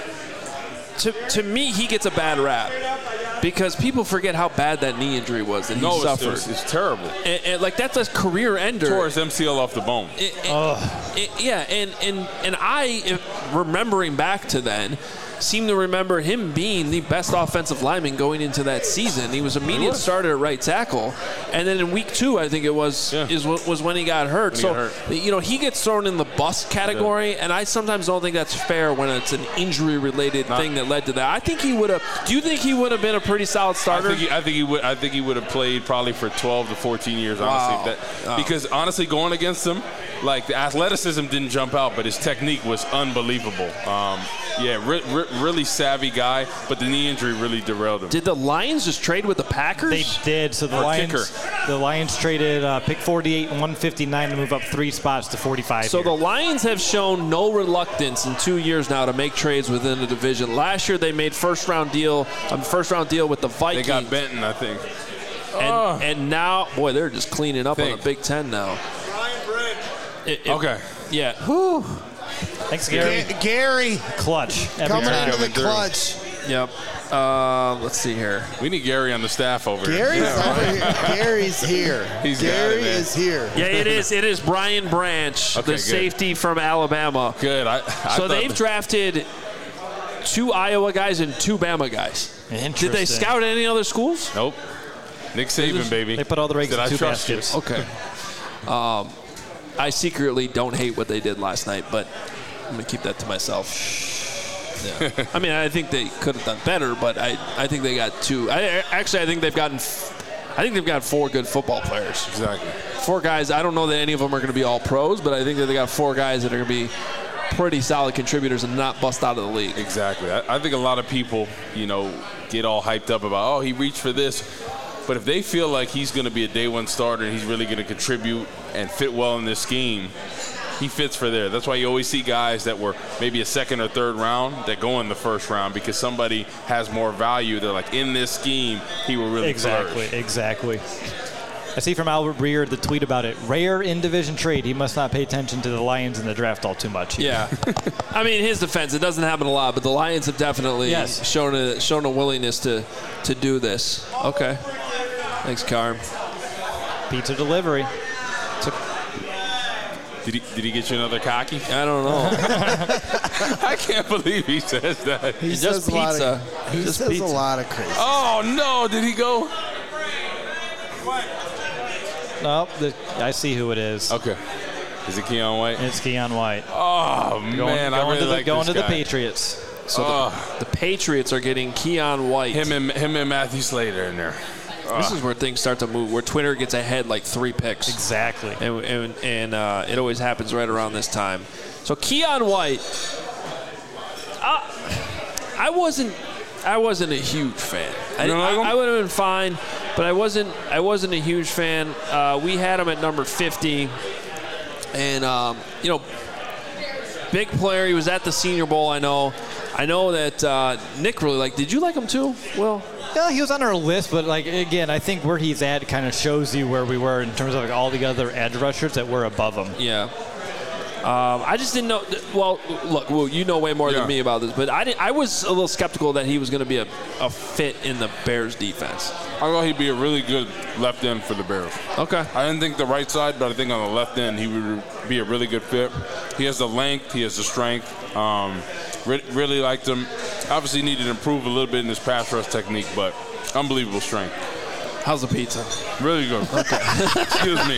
To to me, he gets a bad rap because people forget how bad that knee injury was that he no, it's, suffered. it's, it's terrible. And, and like that's a career ender. Tore his M C L off the bone. It- it- it- yeah, and, and, and I, if remembering back to then, seem to remember him being the best offensive lineman going into that season. He was immediate was. starter at right tackle, and then in week two, I think it was Yeah. is what was when he got hurt. When he so got hurt. you know he gets thrown in the bust category, and I sometimes don't think that's fair when it's an injury-related Not- thing that led to that. I think he would have. Do you think he would have been a pretty solid I starter? think, he, I think he would. I think he would have played probably for twelve to fourteen years. Wow. Honestly, that, Wow. because honestly, going against him, like the athleticism didn't jump out, but his technique was unbelievable. Um, yeah, re- re- really savvy guy, but the knee injury really derailed him. Did the Lions just trade with the Packers? They did. So the Or Lions, kicker. the Lions traded uh, pick forty-eight and one fifty-nine to move up three spots to forty-five. So here. the Lions have shown no reluctance in two years now to make trades within the division. Last year they made first round deal, um, first round deal with the They Vikings. got Benton, I think. and, Oh. and now, boy, they're just cleaning up on Think. the Big Ten now. It- it- Okay. Yeah. Whew. Thanks, Gary. Ga- Gary Clutch. Every coming time. into the Coming through. clutch. Yep. Uh, let's see here. We need Gary on the staff over Gary's here. over here. Gary's here. He's got Gary it, man. is here. Yeah, it is. It is Brian Branch, Okay, the good. safety from Alabama. Good. I, I So thought they've that- drafted two Iowa guys and two Bama guys. Did they Interesting. scout any other schools? Nope. Nick Saban, baby. They put all the eggs Said, in I two trust you. baskets. Okay. Um, I secretly don't hate what they did last night, but I'm going to keep that to myself. Yeah. I mean, I think they could have done better, but I, I think they got two. I Actually, I think they've gotten f- I think they've got four good football players. Exactly. Four guys. I don't know that any of them are going to be all pros, but I think that they got four guys that are going to be pretty solid contributors and not bust out of the league. Exactly. I, I think a lot of people, you know, get all hyped up about, oh, he reached for this. But if they feel like he's going to be a day one starter and he's really going to contribute and fit well in this scheme, he fits for there. That's why you always see guys that were maybe a second or third round that go in the first round because somebody has more value. They're like, in this scheme, he will really Exactly, flourish. exactly. I see from Albert Breer the tweet about it. Rare in-division trade. He must not pay attention to the Lions in the draft all too much. Yeah. I mean, his defense, it doesn't happen a lot, but the Lions have definitely Yes. shown a shown a willingness to, to do this. Okay. Thanks, Carm. Pizza delivery. Did he, did he get you another cocky? I don't know. I can't believe he says that. He Just says a lot pizza. of, he Just says pizza. a lot of crazy. Oh, no. Did he go? No, the, I see who it is. Okay. Is it Keon White? It's Keon White. Oh, Going, man. I going really to the, like going this to the guy. Patriots. So Oh. the, the Patriots are getting Keon White. Him and, him and Matthew Slater in there. This is where things start to move, where Twitter gets ahead like three picks. Exactly. And and, and uh, it always happens right around this time. So Keion White, uh, I wasn't I wasn't a huge fan. I, You don't like him? I, I would have been fine, but I wasn't I wasn't a huge fan. Uh, we had him at number fifty, and um, you know, big player. He was at the Senior Bowl. I know. I know that uh, Nick really liked. Did you like him too? Well. Yeah, he was on our list, but like again, I think where he's at kind of shows you where we were in terms of like all the other edge rushers that were above him. Yeah. Um, I just didn't know. Well, look, well, you know way more Yeah. than me about this, but I, didn't, I was a little skeptical that he was going to be a, a fit in the Bears defense. I thought he'd be a really good left end for the Bears. Okay. I didn't think the right side, but I think on the left end he would be a really good fit. He has the length, he has the strength. Um, re- really liked him. Obviously needed to improve a little bit in his pass rush technique, but unbelievable strength. How's the pizza? Really good. Okay. Excuse me.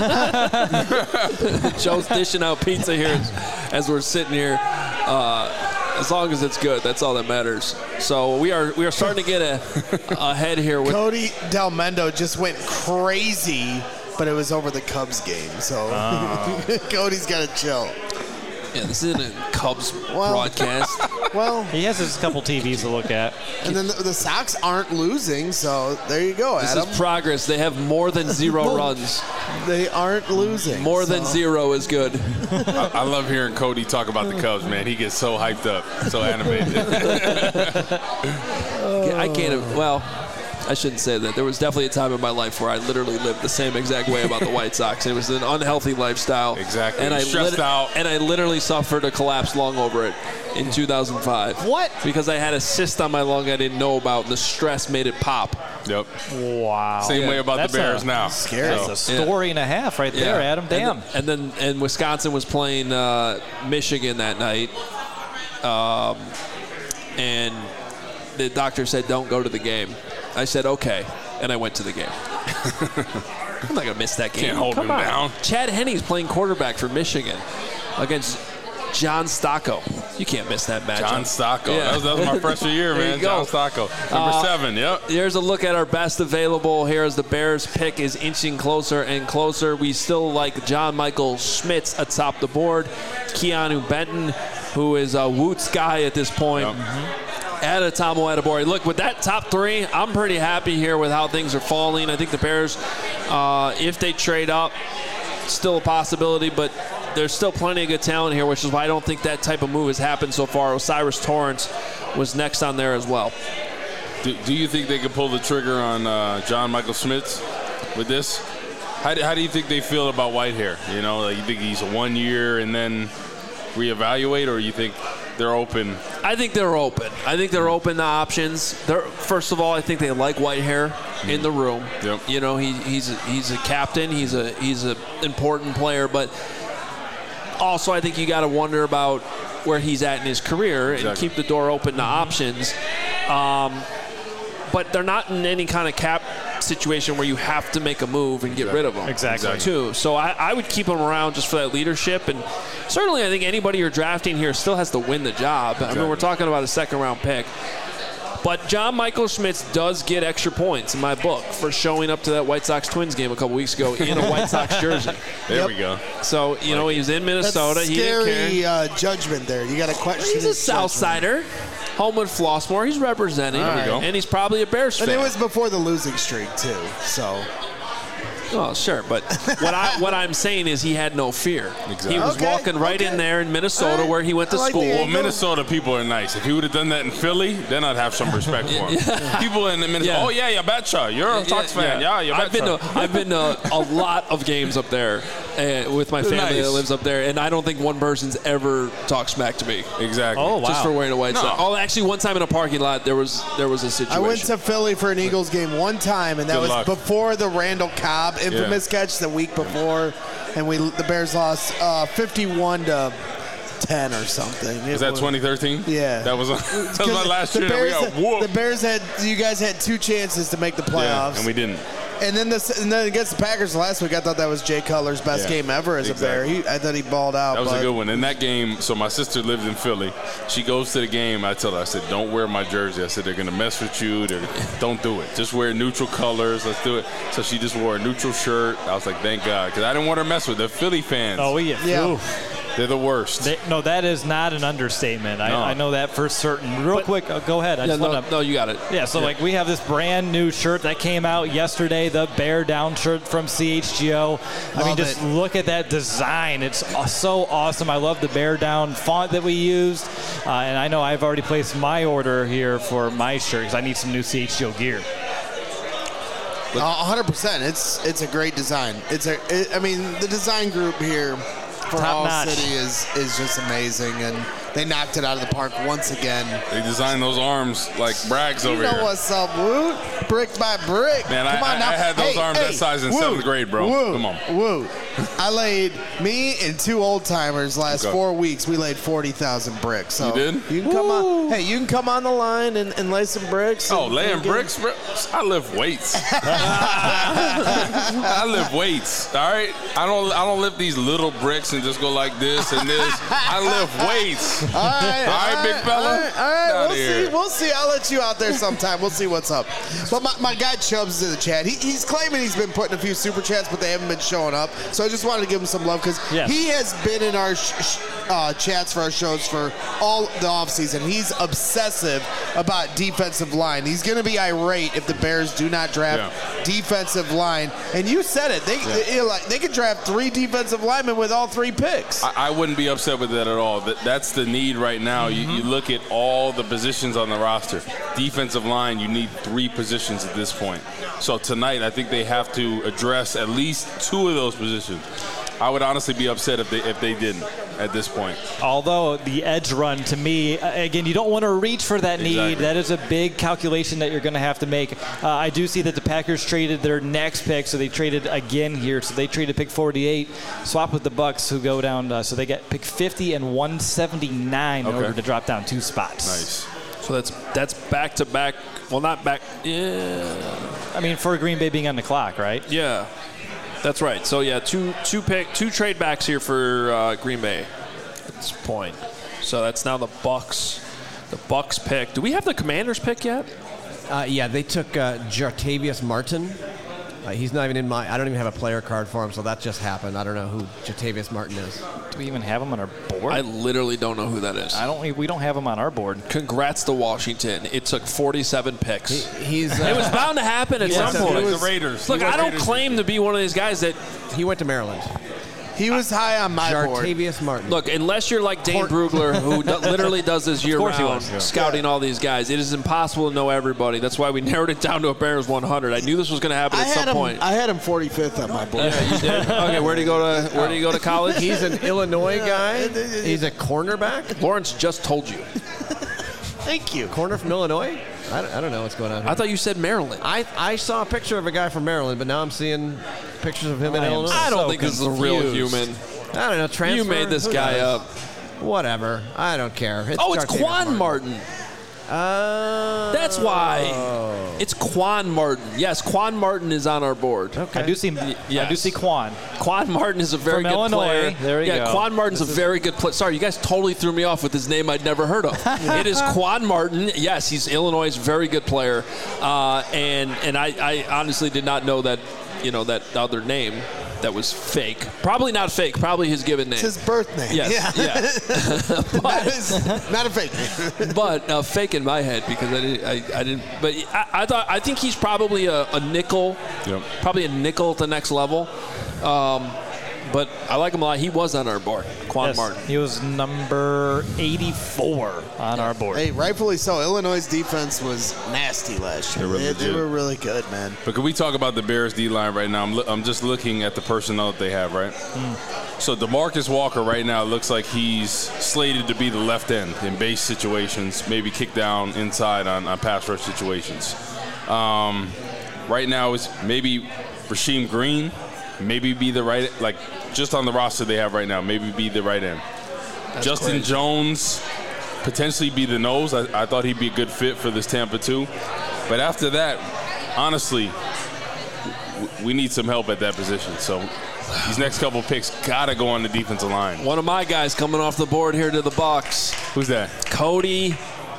Joe's dishing out pizza here as, as we're sitting here. Uh, as long as it's good, that's all that matters. So we are we are starting to get a ahead here with Cody Del Mendo just went crazy, but it was over the Cubs game. So Cody's got to chill. yeah, this isn't a Cubs Well- broadcast. Well, He has his couple T Vs to look at. and then the, the Sox aren't losing, so there you go, This Adam. is progress. They have more than zero runs. They aren't losing. More than so. zero is good. I, I love hearing Cody talk about the Cubs, man. He gets so hyped up, so animated. I can't. Well, I shouldn't say that. There was definitely a time in my life where I literally lived the same exact way about the White Sox. It was an unhealthy lifestyle. Exactly. And I Stressed out. And I literally suffered a collapse lung over it in two thousand five. What? Because I had a cyst on my lung I didn't know about, and the stress made it pop. Yep. Wow. Same Yeah. way about That's the Bears a- now. Scary. That's a story and a half right there, Adam. Damn. And then, and then and Wisconsin was playing uh, Michigan that night, um, and the doctor said, "Don't go to the game." I said, "Okay," and I went to the game. I'm not gonna miss that game. Can't hold Come him on. down. Chad Henne's playing quarterback for Michigan against John Stocco. You can't miss that matchup. John Stocco. Yeah. That, was, that was my freshman year, There you man. go. John Stocco. Number Uh, seven, yep. Here's a look at our best available here as the Bears pick is inching closer and closer. We still like John Michael Schmitz atop the board. Keanu Benton, who is a Woots guy at this point. Yep. Add a Tomo Adebori. Look, with that top three, I'm pretty happy here with how things are falling. I think the Bears, uh, if they trade up, still a possibility, but there's still plenty of good talent here, which is why I don't think that type of move has happened so far. Osiris Torrance was next on there as well. Do, do you think they could pull the trigger on uh, John Michael Schmitz with this? How do, how do you think they feel about Whitehair? You know, like you think he's a one year and then reevaluate, or you think they're open? I think they're open. I think they're open to options. They're, first of all, I think they like Whitehair in the room. Yep. You know, he, he's a, he's a captain. He's a he's an important player, but also I think you got to wonder about where he's at in his career and Exactly. keep the door open to options. Um, but they're not in any kind of cap situation where you have to make a move and get Exactly. rid of them. Exactly. Too. So I, I would keep him around just for that leadership. And certainly I think anybody you're drafting here still has to win the job. I mean, we're talking about a second round pick. But John Michael Schmitz does get extra points in my book for showing up to that White Sox Twins game a couple weeks ago in a White Sox jersey. There Yep. we go. So, you know, he was in Minnesota. That's He didn't care. scary uh, judgment there. You got to question He's a his South judgment. Sider. Homewood Flossmoor. He's representing. There we go. And he's probably a Bears And fan. it was before the losing streak, too. So, Oh, sure, but what I what I'm saying is he had no fear. Exactly. He was Okay, walking right okay. in there in Minnesota All right. where he went to I like school. the Well, angle. Minnesota people are nice. If he would have done that in Philly, then I'd have some respect for him. People in Minnesota, Yeah. oh yeah, you betcha. You're a Sox fan. Yeah, you betcha. I've been to I've been to a lot of games up there uh, with my family Nice. that lives up there, and I don't think one person's ever talked smack to me Exactly. Oh, wow. just for wearing a white No. sock. Oh, actually, one time in a parking lot there was there was a I situation. went to Philly for an Eagles game one time, and that Good was luck. before the Randall Cobb infamous catch the week before, and we the Bears lost uh, fifty-one to ten or something. It Was that twenty thirteen? Yeah. That was, that was my last the year. that we Bears, got whooped. the Bears had you guys had two chances to make the Yeah, playoffs, and we didn't. And then this, and then against the Packers last week, I thought that was Jay Cutler's best Yeah, game ever as exactly. a Bear. He, I thought he balled out. That was but a good one. In that game, so my sister lived in Philly. She goes to the game. I tell her, I said, don't wear my jersey. I said, they're going to mess with you. They're, don't do it. Just wear neutral colors. Let's do it. So she just wore a neutral shirt. I was like, thank God, because I didn't want her to mess with. They're Philly fans. Oh, we get Yeah. oof. They're the worst. They, no, that is not an understatement. No. I, I know that for certain. Real But- quick, uh, go ahead. I Yeah, just no, want to. no, you got it. Yeah, so like we have this brand new shirt that came out yesterday, the Bear Down shirt from C H G O. I mean, Love just it. look at that design. It's uh, so awesome. I love the Bear Down font that we used. Uh, and I know I've already placed my order here for my shirt because I need some new C H G O gear. A hundred percent. It's it's a great design. It's a. It, I mean, the design group here for Top All notch. City is is just amazing, and they knocked it out of the park once again. They designed those arms like Braggs You over know here. what's up, Woot? Brick by brick. Man, I- Come on I- now. I had those Hey, arms that hey, size in Woot, seventh grade, bro. Woot, Come on. Woot. I laid me and two old timers last Okay. four weeks. We laid forty thousand bricks. So You did? You can come on. Hey, you can come on the line and, and lay some bricks. Oh, and- laying and get- bricks, bro. I lift weights. I lift weights. All right, I don't. I don't lift these little bricks and just go like this and this. I lift weights. All right, All right, big fella. All right, all right. Get We'll outta here. see. We'll see. I'll let you out there sometime. We'll see what's up. But my, my guy Chubbs is in the chat. He, he's claiming he's been putting a few super chats, but they haven't been showing up. So I just wanted to give him some love because Yes. he has been in our sh- sh- uh, chats for our shows for all the offseason. He's obsessive about defensive line. He's going to be irate if the Bears do not draft Yeah. defensive line. And you said it. They they, like, they could draft three defensive linemen with all three picks. I, I wouldn't be upset with that at all. That, that's the need right now. You, you look at all the positions on the roster. Defensive line, you need three positions at this point. So tonight, I think they have to address at least two of those positions. I would honestly be upset if they if they didn't at this point. Although the edge run, to me, uh, again, you don't want to reach for that need. Exactly. That is a big calculation that you're going to have to make. Uh, I do see that the Packers traded their next pick, so they traded again here. So they traded pick forty-eight, swap with the Bucks, who go down. Uh, so they get pick fifty and one seventy-nine in Okay. order to drop down two spots. Nice. So that's that's back to back. Well, not back. Yeah, I mean, for Green Bay being on the clock, right? yeah, that's right. So yeah, two two pick two trade backs here for uh, Green Bay at this point. So that's now the Bucks. The Bucks pick. Do we have the Commanders pick yet? Uh, yeah, they took uh, Jartavius Martin. Uh, he's not even in my. I don't even have a player card for him, so that just happened. I don't know who Jartavius Martin is. Do we even have him on our board? I literally don't know who that is. I don't. We don't have him on our board. Congrats to Washington. It took forty-seven picks. He, he's. Uh, it was bound to happen at Yeah, some so point. he Like the Raiders. Look, He was I don't Raiders. claim to be one of these guys that. he went to Maryland. He was high on my board. Jartavius Martin. Look, unless you're like Dane Brugler, who do, literally does this year course he round, was, yeah. scouting all these guys, it is impossible to know everybody. That's why we narrowed it down to a Bears one hundred. I knew this was going to happen I at had some him. point. I had him forty-fifth on my board. Yeah, you did? Okay, where do you go to? Where do you go to college? He's an Illinois guy. He's a cornerback. Lawrence just told you. Thank you. Corner from Illinois. I don't, I don't know what's going on here. I thought you said Maryland. I, I saw a picture of a guy from Maryland, but now I'm seeing pictures of him in I am Illinois. I don't so think this is a real confused. human. I don't know. Transfer. You made this Who guy knows? up. Whatever. I don't care. It's Oh, it's Jartavius Quan Martin. Uh, That's why. It's Quan Martin. Yes, Quan Martin is on our board. Okay. I do see. I yes. do see Quan. Quan Martin is a very From good Illinois. player. There you yeah, go. Quan Martin's a very good player. Sorry, you guys totally threw me off with his name I'd never heard of. It is Quan Martin. Yes, he's Illinois' very good player, uh, and and I, I honestly did not know that you know that other name that was fake. Probably not fake. Probably his given name. It's his birth name. Yes, Yeah. yeah. that is not a fake name. But uh, fake in my head because I didn't. I, I didn't. But I, I thought. I think he's probably a, a nickel. Yep. Probably a nickel at the next level. Um, but I like him a lot. He was on our board. Quan Yes, Martin. he was number eighty-four on our board. Hey, rightfully so. Illinois' defense was nasty last year. They were They, they legit. were really good, man. But can we talk about the Bears D-line right now? I'm, lo- I'm just looking at the personnel that they have, right? So DeMarcus Walker right now looks like he's slated to be the left end in base situations, maybe kick down inside on, on pass rush situations. Um, right now it's maybe Rasheem Green, maybe be the right, like just on the roster they have right now, maybe be the right end. Justin crazy. Jones potentially be the nose. I, I thought he'd be a good fit for this Tampa too. But after that, honestly, we need some help at that position. So these next couple picks got to go on the defensive line. One of my guys coming off the board here to the Bucs. Who's that? Cody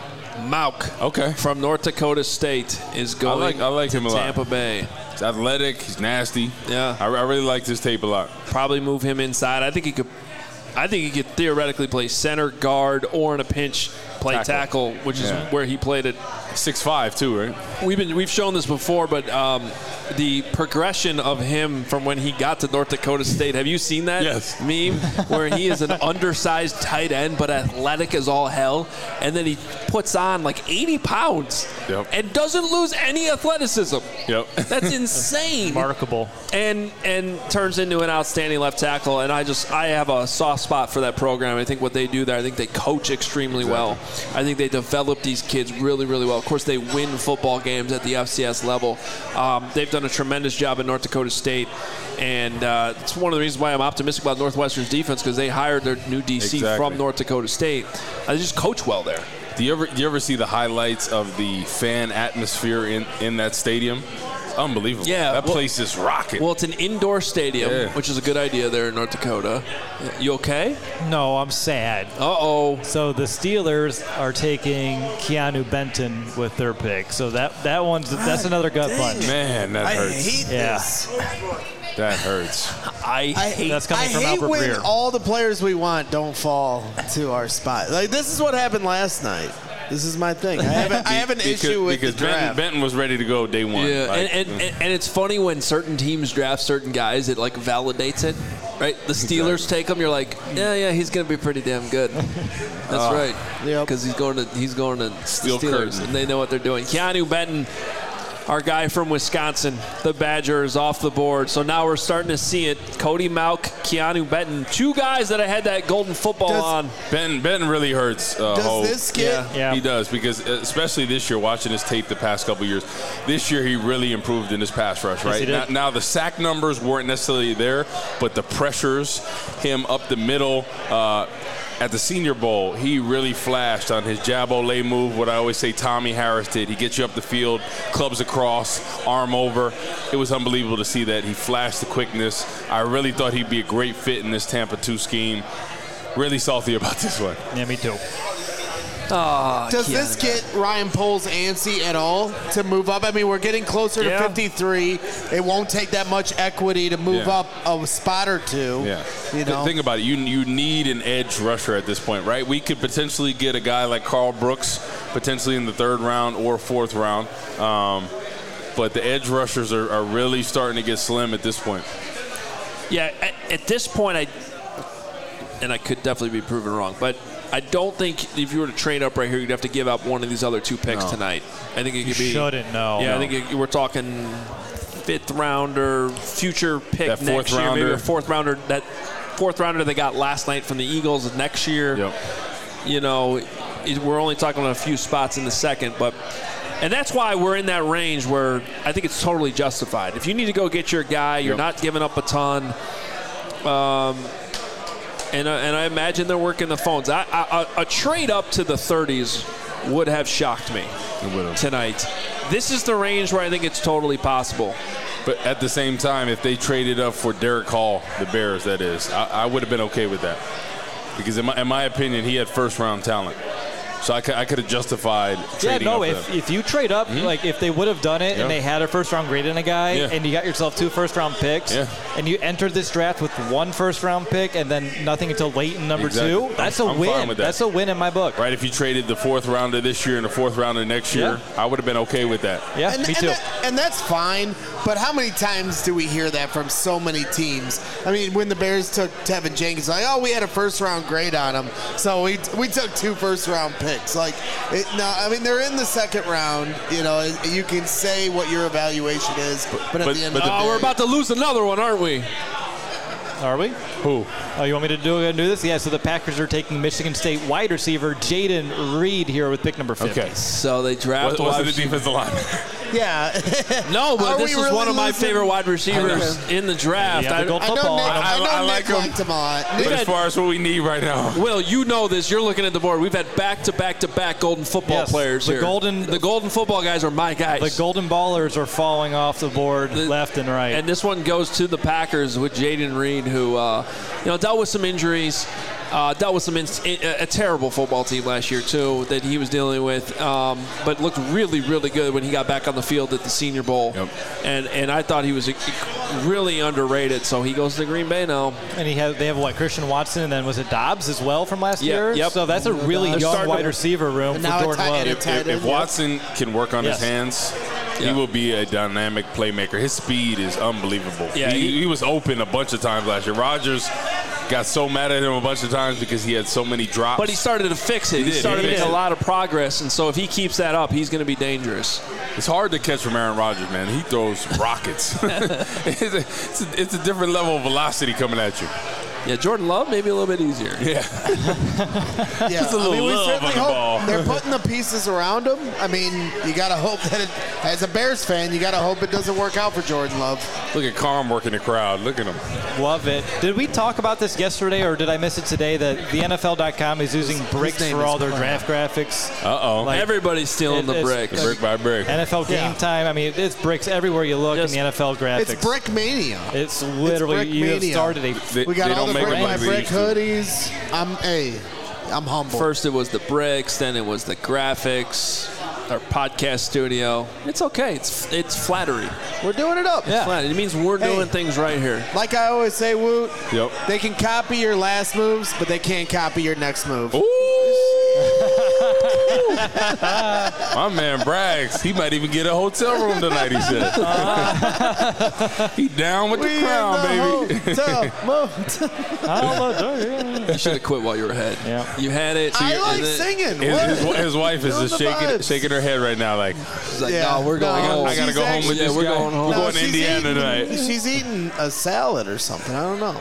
Mauch. Okay. From North Dakota State is going I like, I like to him a lot. Tampa Bay. He's athletic. He's nasty. Yeah. I, I really like this tape a lot. Probably move him inside. I think he could. I think he could theoretically play center, guard, or in a pinch play tackle, tackle which yeah. is where he played it. six five too, right? We've been we've shown this before, but um, the progression of him from when he got to North Dakota State. Have you seen that yes. meme where he is an undersized tight end but athletic as all hell, and then he puts on like eighty pounds yep. and doesn't lose any athleticism. Yep. That's insane. Remarkable. And and turns into an outstanding left tackle. And I just I have a soft spot for that program. I think what they do there, I think they coach extremely exactly. well. I think they develop these kids really, really well. Of course, they win football games at the F C S level. Um, they've done a tremendous job at North Dakota State. And uh, it's one of the reasons why I'm optimistic about Northwestern's defense, because they hired their new D C exactly. from North Dakota State. Uh, they just coach well there. Do you ever do you ever see the highlights of the fan atmosphere in, in that stadium? It's unbelievable. Yeah, that well, place is rocking. Well, it's an indoor stadium, yeah. which is a good idea there in North Dakota. You okay? No, I'm sad. Uh-oh. So the Steelers are taking Keanu Benton with their pick. So that that one's that's another gut punch. Man, that I hurts. hate yeah. this. That hurts. I, I hate that's coming I from hate Albert when Breer. all the players we want don't fall to our spot. Like, this is what happened last night. This is my thing. I have, a, I have an because, issue with because the draft. Benton, Benton was ready to go day one. Yeah, like, and, and, and, and it's funny when certain teams draft certain guys, it like validates it, right? The Steelers exactly. take him, you're like, yeah, yeah, he's gonna be pretty damn good. That's uh, right. Yep. Because he's going to he's going to Steel Steelers, curtain. and they know what they're doing. Keanu Benton, our guy from Wisconsin, the Badgers off the board. So now we're starting to see it. Cody Mauch, Keanu Benton, two guys that I had that golden football does, on. Benton, Benton really hurts. Uh, does Hope. this get? Yeah. Yeah. He does, because especially this year, watching his tape the past couple years, this year he really improved in his pass rush, right? Yes, he did. Now, now the sack numbers weren't necessarily there, but the pressures, him up the middle. Uh, At the Senior Bowl, he really flashed on his jab ole move, what I always say Tommy Harris did. He gets you up the field, clubs across, arm over. It was unbelievable to see that. He flashed the quickness. I really thought he'd be a great fit in this Tampa two scheme. Really salty about this one. Yeah, me too. Oh, Does this get Ryan Poles antsy at all to move up? I mean, we're getting closer yeah. to fifty-three. It won't take that much equity to move yeah. up a spot or two. Yeah. You know? Think about it. You you need an edge rusher at this point, right? We could potentially get a guy like Carl Brooks, potentially in the third round or fourth round. Um, but the edge rushers are, are really starting to get slim at this point. Yeah, at, at this point, I and I could definitely be proven wrong, but I don't think if you were to trade up right here, you'd have to give up one of these other two picks no. tonight. I think it could you be. Shouldn't no. Yeah, no. I think it, we're talking fifth rounder, future pick that next fourth year, rounder. maybe a fourth rounder. That fourth rounder they got last night from the Eagles next year. Yep. You know, it, we're only talking about a few spots in the second, but. And that's why we're in that range where I think it's totally justified. If you need to go get your guy, you're yep. not giving up a ton. Um, and, uh, and I imagine they're working the phones. I, I, a, a trade up to the thirties would have shocked me tonight. This is the range where I think it's totally possible. But at the same time, if they traded up for Derek Hall, the Bears, that is, I, I would have been okay with that. Because in my, in my opinion, he had first-round talent. So I could, I could have justified trading Yeah, no, up if, them. if you trade up, mm-hmm. like if they would have done it yeah. and they had a first-round grade in a guy yeah. and you got yourself two first-round picks yeah. and you entered this draft with one first-round pick and then nothing until late in number exactly. two, that's I'm, a I'm win. Fine with that. That's a win in my book. Right, if you traded the fourth rounder this year and the fourth rounder next year, Yeah. I would have been okay with that. Yeah, and, me and too. that- and that's fine, but how many times do we hear that from so many teams? I mean, when the Bears took Tevin Jenkins, like, oh, we had a first-round grade on him, so we we took two first-round picks. Like, it, no, I mean, they're in the second round. You know, you can say what your evaluation is, but, but at But- the end but of the the Oh, day, we're about to lose another one, aren't we? Are we? Who? Oh, you want me to do, do this? Yeah, so the Packers are taking Michigan State wide receiver Jaden Reed here with pick number fifty. Okay. So they draft What, was it the defensive line? Yeah. No, but Are this is we really one of my losing? favorite wide receivers in the draft. Yeah, the I- gold I know football. Nick, I I don't- know I Nick like him. liked him a lot. But Nick- as far as what we need right now. Will, you know this. You're looking at the board. We've had back-to-back-to-back golden football Yes, players the here. golden- the golden football guys are my guys. The Golden Ballers are falling off the board The- left and right. And this one goes to the Packers with Jaden Reed, who uh, you know dealt with some injuries, uh, dealt with some in- a, a terrible football team last year too that he was dealing with, um, but looked really, really good when he got back on the field at the Senior Bowl. Yep. And and I thought he was a, really underrated. So he goes to Green Bay now. And he has, they have, what, Christian Watson, and then was it Dobbs as well from last Yeah, year? yep. So that's a really They're young starting wide to- receiver room And for now a Jordan tight- Love. and a If, tight if, if end, yeah. Watson can work on Yes. his hands, Yeah. he will be a dynamic playmaker. His speed is unbelievable. Yeah, he, he- he was open a bunch of times last year. Rodgers got so mad at him a bunch of times because he had so many drops. But he started to fix it. He, He did, started he to make did. a lot of progress, and so if he keeps that up, he's going to be dangerous. It's hard to catch from Aaron Rodgers, man. He throws rockets. it's, a, it's, a, it's a different level of velocity coming at you. Yeah, Jordan Love maybe a little bit easier. Yeah. Yeah, Just a little I mean, we love certainly on the hope ball. they're putting the pieces around him. I mean, you got to hope that it, as a Bears fan, you got to hope it doesn't work out for Jordan Love. Look at Carm working the crowd. Look at him. Love it. Did we talk about this yesterday, or did I miss it today, that the N F L dot com is using bricks name for is all their Carm. draft graphics? Uh-oh. Like- Everybody's stealing It- the it's- bricks. brick by brick. N F L Game Yeah. Time. I mean, it's bricks everywhere you look Just- in the N F L graphics. It's Brick Mania. It's literally, Brick you have mania. started a They, We got they all don't the make brick them by like they brick used to. hoodies. I'm hey, I'm humble. First it was the bricks, then it was the graphics, our podcast studio. It's okay. It's it's flattery. We're doing it up. It's flat. It means we're Hey. doing things right here. Like I always say, Woot. Yep. They can copy your last moves, but they can't copy your next move. My man brags. He might even get a hotel room tonight, he said. He down with the We crown, in the baby. hotel motel. You should have quit while you were ahead. Yeah. You had it. I and like then- singing. His, What? his, his wife is Feeling just the shaking vibes. shaking her head right now like, She's like, Yeah. no, we're going No, home. I gotta she's go home with actually- this Yeah, we're guy. going home. We're No, going to she's Indiana eating, tonight. She's eating a salad or something. I don't know.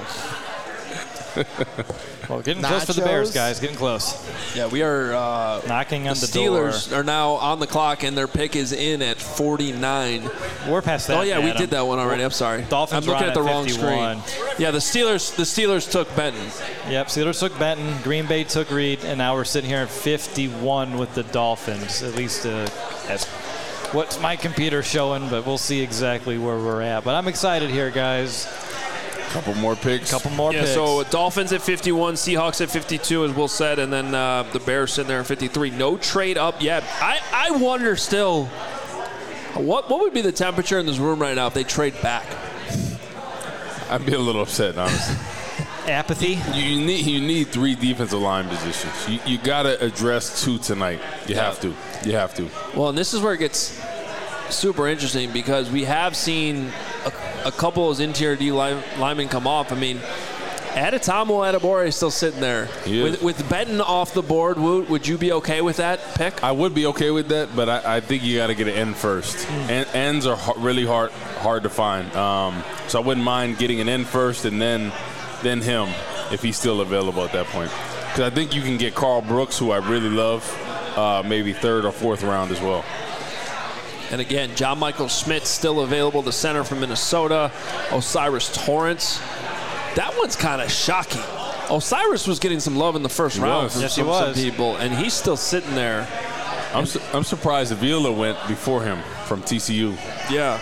Well, getting close for the Bears, Nachos. guys. Getting close. Yeah, we are. Uh, Knocking on the the, Steelers door. are now on the clock, and their pick is in at forty-nine. We're past that. Oh yeah, we Adam. did that one already. I'm sorry. Dolphins I'm looking are at on the at wrong fifty-one. screen. Yeah, the Steelers. The Steelers took Benton. Yep, Steelers took Benton, Green Bay took Reed, and now we're sitting here at fifty-one with the Dolphins. At least uh, that's what my computer's showing, but we'll see exactly where we're at. But I'm excited here, guys. Couple more picks. Couple more Yeah, picks. so Dolphins at fifty-one, Seahawks at fifty-two, as Will said, and then uh, the Bears sitting there at fifty-three. No trade up yet. I, I wonder still, what what would be the temperature in this room right now if they trade back? I'd be a little upset, honestly. Apathy. You, you need you need three defensive line positions. You you gotta address two tonight. You have to. You have to. Well, and this is where it gets super interesting because we have seen a, a couple of those interior D line, linemen come off. I mean, Adetomo Adebawore is still sitting there. He is. With, with Benton off the board, Woot, would you be okay with that pick? I would be okay with that, but I, I think you got to get an end first. En- ends are har- really hard hard to find. Um, so I wouldn't mind getting an end first and then then him if he's still available at that point. Because I think you can get Carl Brooks, who I really love, uh, maybe third or fourth round as well. And again, John Michael Schmidt still available, the center from Minnesota. Osiris Torrance. That one's kind of shocking. Osiris was getting some love in the first He round was. from Yes, he some, some was. people, and he's still sitting there. I'm su- I'm surprised Avila went before him from T C U. Yeah.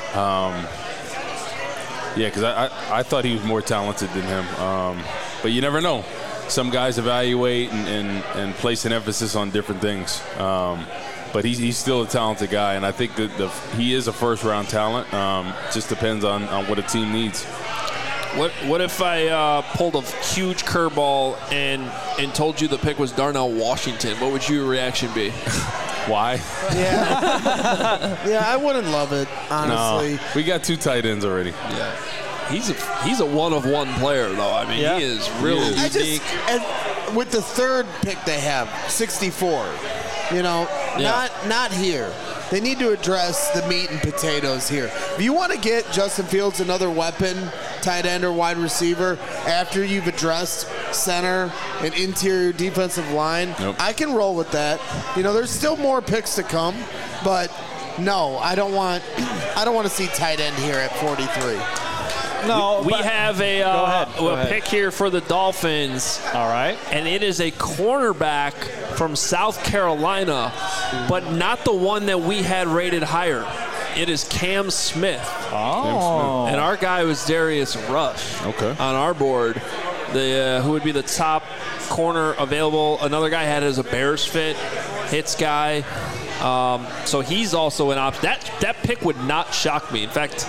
Yeah, because I, I I thought he was more talented than him. Um, but you never know. Some guys evaluate and, and, and place an emphasis on different things. Um, but he's, he's still a talented guy, and I think that the, he is a first-round talent. Um, just depends on, on what a team needs. What what if I uh, pulled a huge curveball and and told you the pick was Darnell Washington? What would your reaction be? Why? Yeah. Yeah, I wouldn't love it, honestly. No, we got two tight ends already. Yeah. He's a he's a one of one player though. I mean, Yeah. he is really He is. I unique. just and with the third pick they have, sixty-four. You know, Yeah. not not here. They need to address the meat and potatoes here. If you want to get Justin Fields another weapon tight end or wide receiver after you've addressed center and interior defensive line, nope. I can roll with that. You know, there's still more picks to come, but no, I don't want I don't want to see tight end here at forty-three. No, we, we have a, uh, go ahead, go a ahead. pick here for the Dolphins. All right. And it is a cornerback from South Carolina, but not the one that we had rated higher. It is Cam Smith. Oh. And our guy was Darius Rush okay. on our board. The uh, who would be the top corner available. Another guy had it as a Bears fit, hits guy. Um, so he's also an option. That, that pick would not shock me. In fact,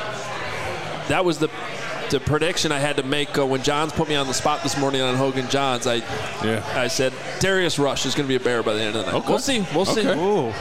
that was the the prediction I had to make uh, when Johns put me on the spot this morning on Hogan Johns. I yeah. I said Darius Rush is going to be a Bear by the end of the night. Okay. We'll see. We'll okay. see. Ooh.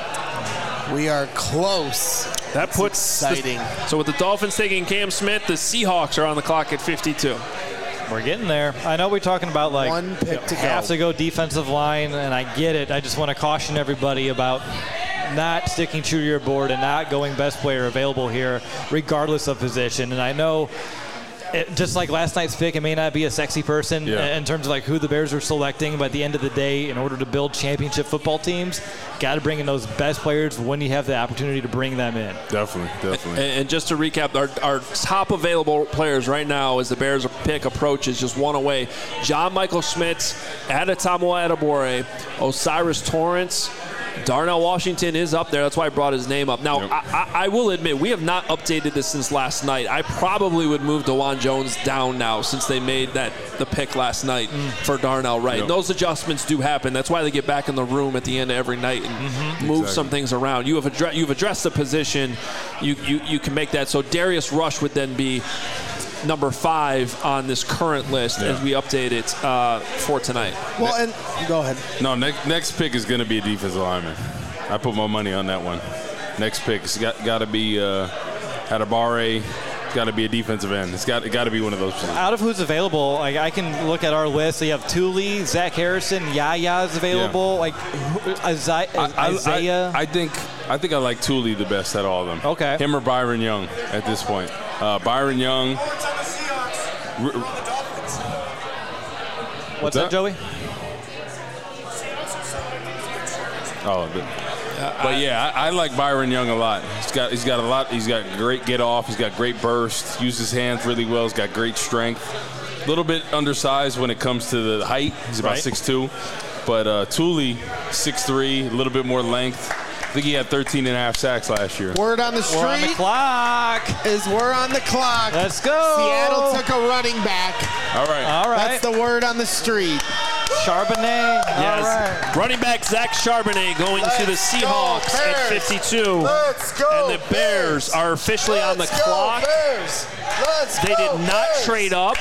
We are close. That That's puts exciting. The, so with the Dolphins taking Cam Smith, the Seahawks are on the clock at fifty-two. We're getting there. I know we're talking about like one pick to have go. to go defensive line, and I get it. I just want to caution everybody about not sticking true to your board and not going best player available here, regardless of position. And I know, it, just like last night's pick, it may not be a sexy person yeah. in terms of like who the Bears are selecting, but at the end of the day, in order to build championship football teams, got to bring in those best players when you have the opportunity to bring them in. Definitely, definitely. And, and just to recap, our, our top available players right now as the Bears pick approaches just one away. John Michael Schmitz, Adetomo Adebawore, Osiris Torrance, Darnell Washington is up there. That's why I brought his name up. Now, yep. I, I, I will admit, we have not updated this since last night. I probably would move DeJuan Jones down now since they made that the pick last night mm. for Darnell Wright. Yep. And those adjustments do happen. That's why they get back in the room at the end of every night and mm-hmm. move exactly. some things around. You have addressed, you've addressed the position. You, you, you can make that. So Darius Rush would then be number five on this current list yeah. as we update it uh, for tonight. Well, and go ahead. No, next next pick is going to be a defensive lineman. I put my money on that one. Next pick, it's got got to be uh, Adebawore. It's got to be a defensive end. It's got it got to be one of those. Out of who's available, like I can look at our list. So you have Thule, Zach Harrison, Yaya is available. Yeah. Like Isaiah. I, I, Isaiah. I, I think I think I like Thule the best out of all of them. Okay. Him or Byron Young at this point. Uh, Byron Young. What's that? up, Joey? Oh, the, but yeah, I, I like Byron Young a lot. He's got he's got a lot. He's got great get off. He's got great burst. Uses his hands really well. He's got great strength. A little bit undersized when it comes to the height. He's about right. six two, but uh, Thule six three, a little bit more length. I think he had thirteen and a half sacks last year. Word on the street. We're on the clock. Is we're on the clock. Let's go. Seattle took a running back. All right. All right. That's the word on the street. Charbonnet. Yes. All right. Running back Zach Charbonnet going Let's to the Seahawks go, at Bears. fifty-two. Let's go, And the Bears, Bears. are officially Let's on the go, clock. Bears. Let's They go, did not Bears. trade up.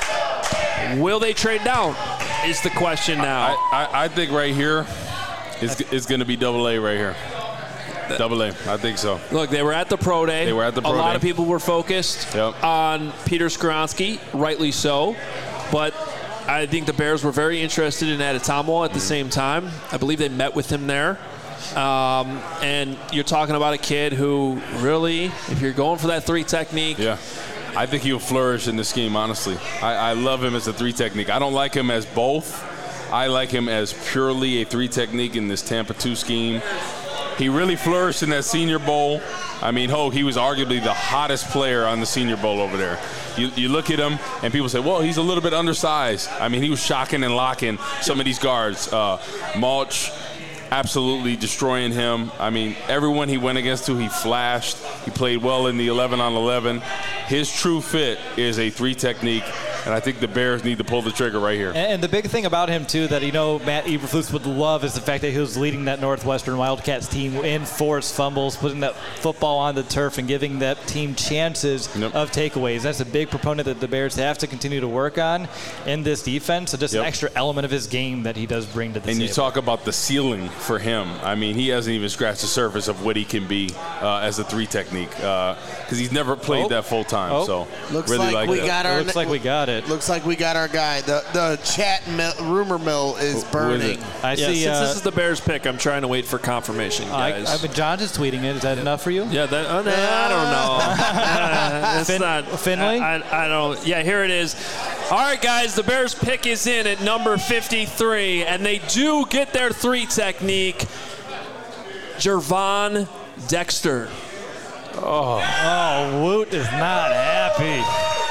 Will they trade down? Is the question now. I, I, I think right here is is going to be double A right here. Double A. I think so. Look, they were at the Pro Day. They were at the Pro A lot Day. of people were focused Yep. on Peter Skoronski, rightly so. But I think the Bears were very interested in Adetomo at the same time. I believe they met with him there. Um, and you're talking about a kid who really, if you're going for that three technique, Yeah. I think he'll flourish in the scheme, honestly. I, I love him as a three technique. I don't like him as both. I like him as purely a three technique in this Tampa two scheme. He really flourished in that Senior Bowl. I mean, oh, he was arguably the hottest player on the Senior Bowl over there. You, you look at him, and people say, well, he's a little bit undersized. I mean, he was shocking and locking some of these guards. Uh, Mulch, absolutely destroying him. I mean, everyone he went against to, he flashed. He played well in the eleven on eleven. His true fit is a three technique, and I think the Bears need to pull the trigger right here. And, and the big thing about him, too, that, you know, Matt Eberflus would love is the fact that he was leading that Northwestern Wildcats team in forced fumbles, putting that football on the turf and giving that team chances Yep. of takeaways. That's a big proponent that the Bears have to continue to work on in this defense. So just Yep. an extra element of his game that he does bring to the And table. you talk about the ceiling for him. I mean, he hasn't even scratched the surface of what he can be uh, as a three technique because uh, he's never played Oh. that full time. Oh. So Looks really like like we that. got It our looks like we got it. it. Looks like we got our guy. The the chat mill, rumor mill is burning. I yeah, see. Since Uh, this is the Bears pick, I'm trying to wait for confirmation, guys. I, I mean, John is tweeting it. Is that enough for you? Yeah, that, uh, I don't know. uh, it's fin- not Finley? I, I, I don't. Yeah, here it is. All right, guys, the Bears pick is in at number fifty-three, and they do get their three technique. Gervon Dexter. Oh, oh, Woot is not happy.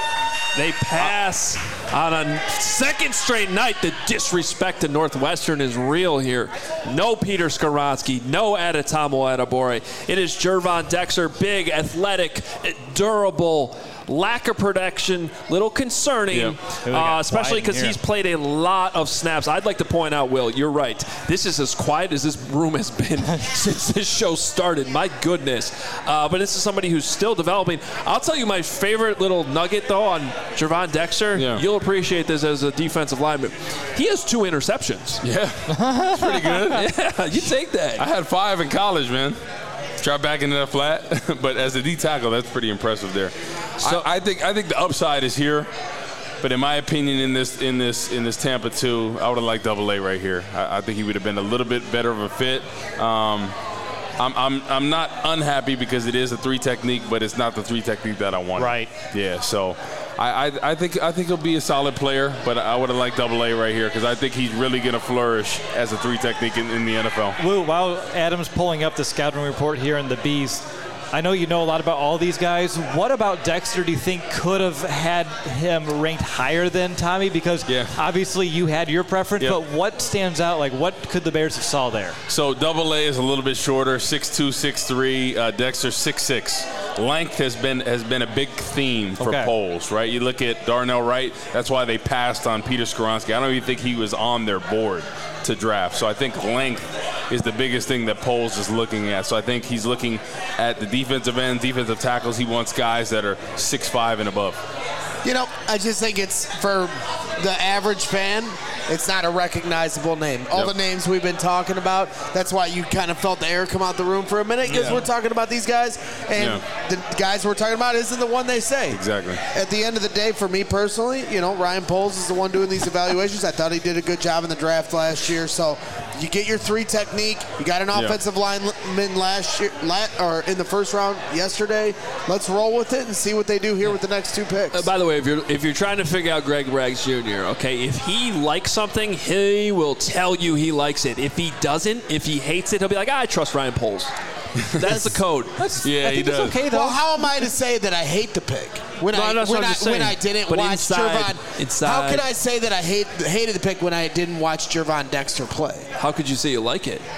They pass on a second straight night. The disrespect to Northwestern is real here. No Peter Skoronski, no Adetomo Adebawore. It is Gervon Dexter, big, athletic, durable, lack of protection, little concerning, Yep. uh, especially because here. he's played a lot of snaps. I'd like to point out, Will, you're right. This is as quiet as this room has been since this show started. My goodness. Uh, but this is somebody who's still developing. I'll tell you my favorite little nugget, though, on Gervon Dexter. Yeah. You'll appreciate this as a defensive lineman. He has two interceptions. Yeah, that's pretty good. Yeah, you take that. I had five in college, man. Drop back into that flat, but as a D tackle, that's pretty impressive there. So I, I think I think the upside is here, but in my opinion, in this in this in this Tampa two, I would have liked Double A right here. I, I think he would have been a little bit better of a fit. Um, I'm I'm I'm not unhappy because it is a three technique, but it's not the three technique that I wanted. Right. Yeah. So. I, I, I think I think he'll be a solid player, but I would have liked Double A right here because I think he's really going to flourish as a three technique in, in the N F L. Woo, while Adam's pulling up the scouting report here in the Beast, I know you know a lot about all these guys. What about Dexter do you think could have had him ranked higher than Tommy? Because yeah. obviously you had your preference, yep. but what stands out? Like, what could the Bears have saw there? So Double A is a little bit shorter, six two, six three. Uh, Dexter six six. Length has been has been a big theme for okay. polls, right? You look at Darnell Wright. That's why they passed on Peter Skoronski. I don't even think he was on their board to draft. So I think length is the biggest thing that polls is looking at. So I think he's looking at the defensive end, defensive tackles. He wants guys that are six five and above. You know, I just think it's for the average fan, it's not a recognizable name. All Yep. the names we've been talking about, that's why you kind of felt the air come out the room for a minute because Yeah. we're talking about these guys, and Yeah. the guys we're talking about isn't the one they say. Exactly. At the end of the day, for me personally, you know, Ryan Poles is the one doing these evaluations. I thought he did a good job in the draft last year. So you get your three technique. You got an Yeah. offensive lineman last year, la- or in the first round yesterday. Let's roll with it and see what they do here with the next two picks. Uh, by the way, if you're if you're trying to figure out Greg Braggs Junior, okay, if he likes something, he will tell you he likes it. If he doesn't, if he hates it, he'll be like, ah, I trust Ryan Poles. That's the code. That's, Yeah, I he think it's does. okay, though. Well, how am I to say that I hate the pick when No, I that's when what I'm I, just when saying. I didn't But watch inside- Gervon? inside- How can I say that I hate hated the pick when I didn't watch Gervon Dexter play? How could you say you like it?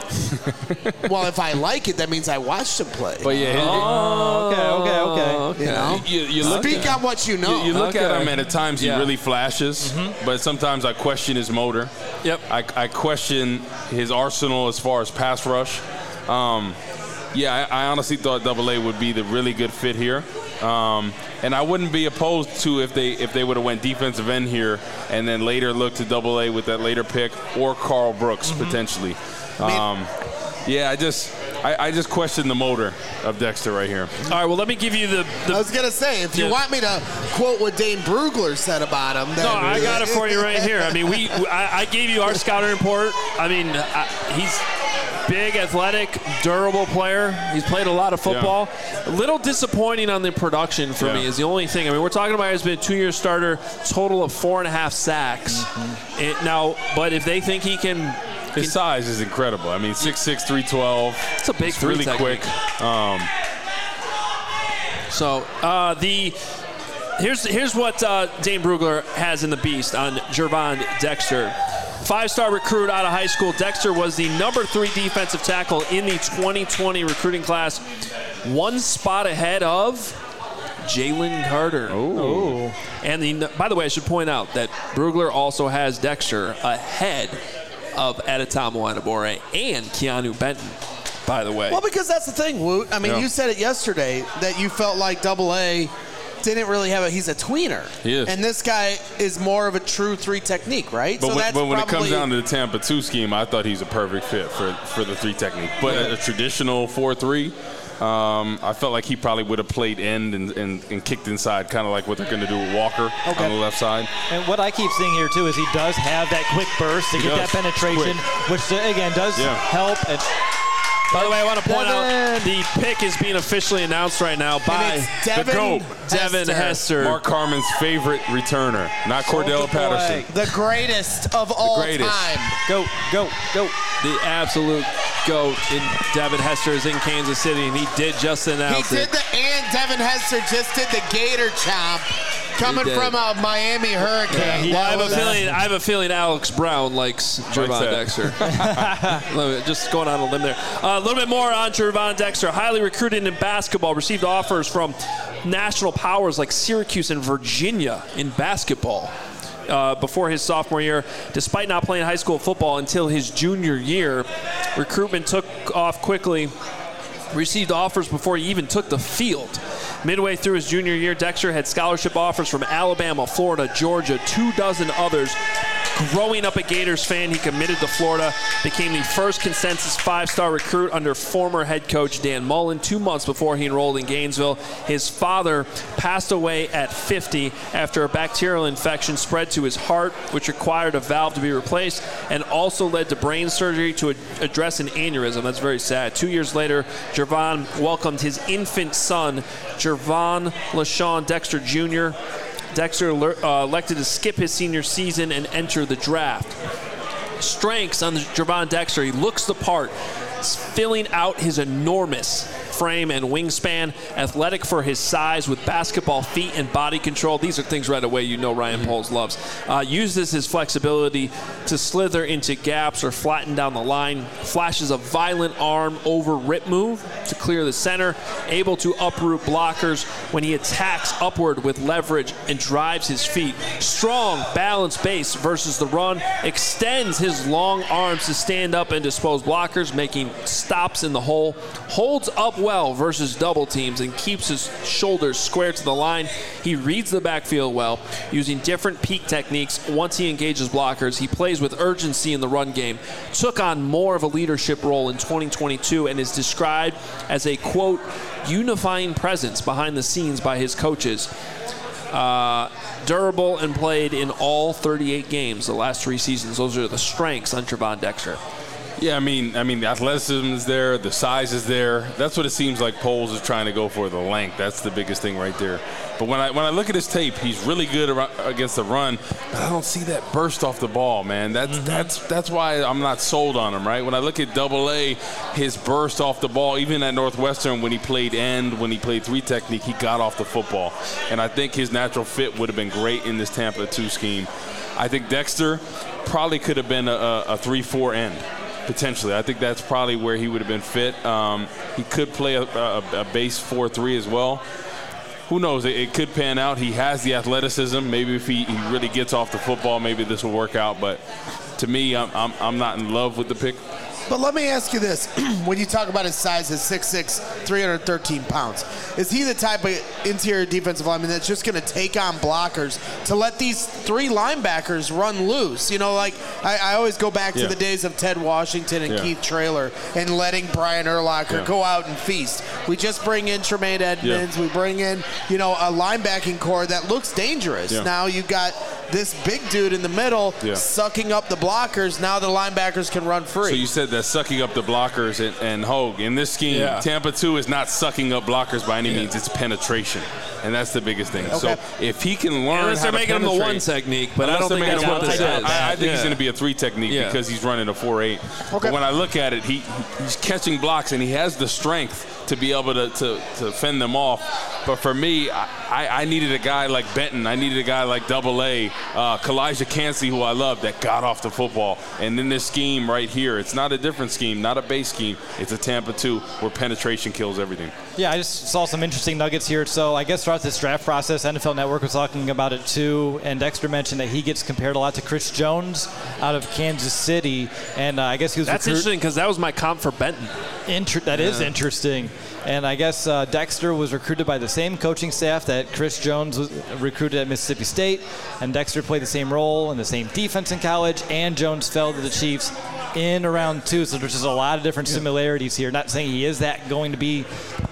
Well, if I like it, that means I watched him play. But yeah, Oh, okay, okay, okay. you know, you, you look speak on what you know. You, you look at Okay. him, and at times he Yeah. really flashes, but sometimes I question his motor. Yep. I, I question his arsenal as far as pass rush. Um, yeah, I, I honestly thought Double A would be the really good fit here, um, and I wouldn't be opposed to if they if they would have went defensive end here and then later looked to Double A with that later pick or Carl Brooks potentially. Um, yeah, I just I, I just question the motor of Dexter right here. All right, well, let me give you the, the I was gonna say, if you Yeah. want me to quote what Dane Brugler said about him, then No, I got it for you right here. I mean, we I, I gave you our scouting report. I mean, I, he's big, athletic, durable player. He's played a lot of football. A little disappointing on the production for Yeah. me is the only thing. I mean, we're talking about he's been a two-year starter, total of four and a half sacks. Mm-hmm. It, now, but if they think he can, His size is incredible. I mean, six six, three twelve. it's a big It's three really technique. quick. Um, So uh, the here's here's what uh, Dane Brugler has in the beast on Gervon Dexter. Five-star recruit out of high school, Dexter was the number three defensive tackle in the twenty twenty recruiting class, one spot ahead of Jalen Carter. oh. And the by the way, I should point out that Brugler also has Dexter ahead of Adetomo Adebawore and Keanu Benton. By the way, Well, because that's the thing, Woot. I mean, Yeah. you said it yesterday that you felt like Double A didn't really have a. He's a tweener. He is. And this guy is more of a true three technique, right? But, so when, that's but when it comes probably- down to the Tampa two scheme, I thought he's a perfect fit for, for the three technique. But a, a traditional four three, Um, I felt like he probably would have played end and, and, and kicked inside, kind of like what they're going to do with Walker okay. on the left side. And what I keep seeing here, too, is he does have that quick burst to he get does. that penetration, quick. which, again, does yeah. help. And By the way, I want to point Devin. out the pick is being officially announced right now by Devin the GOAT, Devin Hester. Mark Carman's favorite returner, not Cordell Patterson. The greatest of all the greatest. time. Go, go, go. The absolute GOAT in Devin Hester is in Kansas City, and he did just announce He did it. the, and Devin Hester just did the Gator chomp. Coming from a Miami Hurricane. Yeah, well, I, have a feeling, I have a feeling Alex Brown likes Gervon Dexter. Just going on a limb there. Uh, a little bit more on Gervon Dexter. Highly recruited in basketball. Received offers from national powers like Syracuse and Virginia in basketball. Uh, before his sophomore year, despite not playing high school football until his junior year, recruitment took off quickly. Received offers before he even took the field. Midway through his junior year, Dexter had scholarship offers from Alabama, Florida, Georgia, two dozen others. Growing up a Gators fan, he committed to Florida, became the first consensus five-star recruit under former head coach Dan Mullen two months before he enrolled in Gainesville. His father passed away at fifty after a bacterial infection spread to his heart, which required a valve to be replaced, and also led to brain surgery to ad- address an aneurysm. That's very sad. Two years later, Gervon welcomed his infant son, Gervon LaShawn Dexter Junior Dexter uh, elected to skip his senior season and enter the draft. Strengths on Gervon Dexter: he looks the part, filling out his enormous frame and wingspan, athletic for his size with basketball feet and body control. These are things right away you know Ryan mm-hmm. Poles loves. Uh, uses his flexibility to slither into gaps or flatten down the line. Flashes a violent arm over rip move to clear the center. Able to uproot blockers when he attacks upward with leverage and drives his feet. Strong, balanced base versus the run. Extends his long arms to stand up and dispose blockers, making stops in the hole. Holds up well versus double teams and keeps his shoulders square to the line. He reads the backfield well, using different peak techniques. Once he engages blockers, he plays with urgency in the run game. Took on more of a leadership role in twenty twenty-two and is described as a, quote, unifying presence behind the scenes by his coaches. Uh, durable and played in all thirty-eight games the last three seasons. Those are the strengths on Gervon Dexter. Yeah, I mean, I mean, the athleticism is there, the size is there. That's what it seems like Poles is trying to go for, the length. That's the biggest thing right there. But when I when I look at his tape, he's really good against the run, but I don't see that burst off the ball, man. That's mm-hmm. that's that's why I'm not sold on him, right? When I look at Double A, his burst off the ball, even at Northwestern when he played end, when he played three technique, he got off the football. And I think his natural fit would have been great in this Tampa two scheme. I think Dexter probably could have been a, a three four end. Potentially. I think that's probably where he would have been fit. Um, he could play a, a, a base four three as well. Who knows? It, it could pan out. He has the athleticism. Maybe if he, he really gets off the football, maybe this will work out. But to me, I'm, I'm, I'm not in love with the pick. But let me ask you this. When you talk about his size, his six six, three hundred thirteen pounds, is he the type of interior defensive lineman that's just going to take on blockers to let these three linebackers run loose? You know, like I, I always go back to yeah. the days of Ted Washington and yeah. Keith Traylor and letting Brian Urlacher yeah. go out and feast. We just bring in Tremaine Edmonds. Yeah. We bring in, you know, a linebacking core that looks dangerous. Yeah. Now you've got this big dude in the middle yeah. sucking up the blockers. Now the linebackers can run free. So you said that sucking up the blockers and, and Hogue. In this scheme, yeah. Tampa two is not sucking up blockers by any yeah. means. It's penetration. And that's the biggest thing. Okay. So if he can learn Unless how they're to making him the one technique, but I don't think that's what this is. I, I think yeah. he's going to be a three technique yeah. because he's running a four eight. Okay. But when I look at it, he he's catching blocks and he has the strength to be able to, to, to fend them off. But for me, I, I needed a guy like Benton. I needed a guy like Double A, uh, Kalijah Cansey, who I love, that got off the football. And in this scheme right here, it's not a different scheme, not a base scheme. It's a Tampa two where penetration kills everything. Yeah, I just saw some interesting nuggets here. So I guess throughout this draft process, N F L Network was talking about it too. And Dexter mentioned that he gets compared a lot to Chris Jones out of Kansas City. And uh, I guess he was That's recruit- interesting because that was my comp for Benton. Inter- that yeah. is interesting. And I guess uh, Dexter was recruited by the same coaching staff that Chris Jones was recruited at Mississippi State. And Dexter played the same role in the same defense in college. And Jones fell to the Chiefs in round two. So there's just a lot of different similarities here. Not saying he is that going to be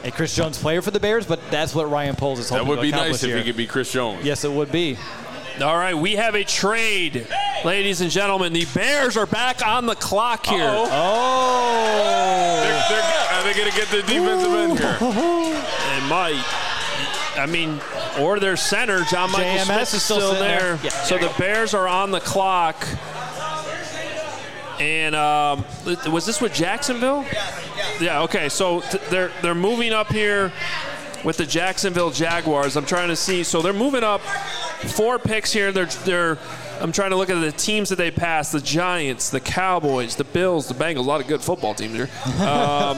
a Chris Jones player for the Bears, but that's what Ryan Poles is hoping to accomplish. That would be nice here. if he could be Chris Jones. Yes, it would be. All right, we have a trade, ladies and gentlemen. The Bears are back on the clock here. Uh-oh. Oh. They're, they're, are they going to get the defensive end here? They might. I mean, or their center, John Michael J M S Smith, is is still still sitting there. there. Yeah, so there the Bears are on the clock. And um, was this with Jacksonville? Yeah. Okay. So th- they're they're moving up here with the Jacksonville Jaguars. I'm trying to see. So they're moving up four picks here. They're they're. I'm trying to look at the teams that they passed: the Giants, the Cowboys, the Bills, the Bengals. A lot of good football teams here. Um,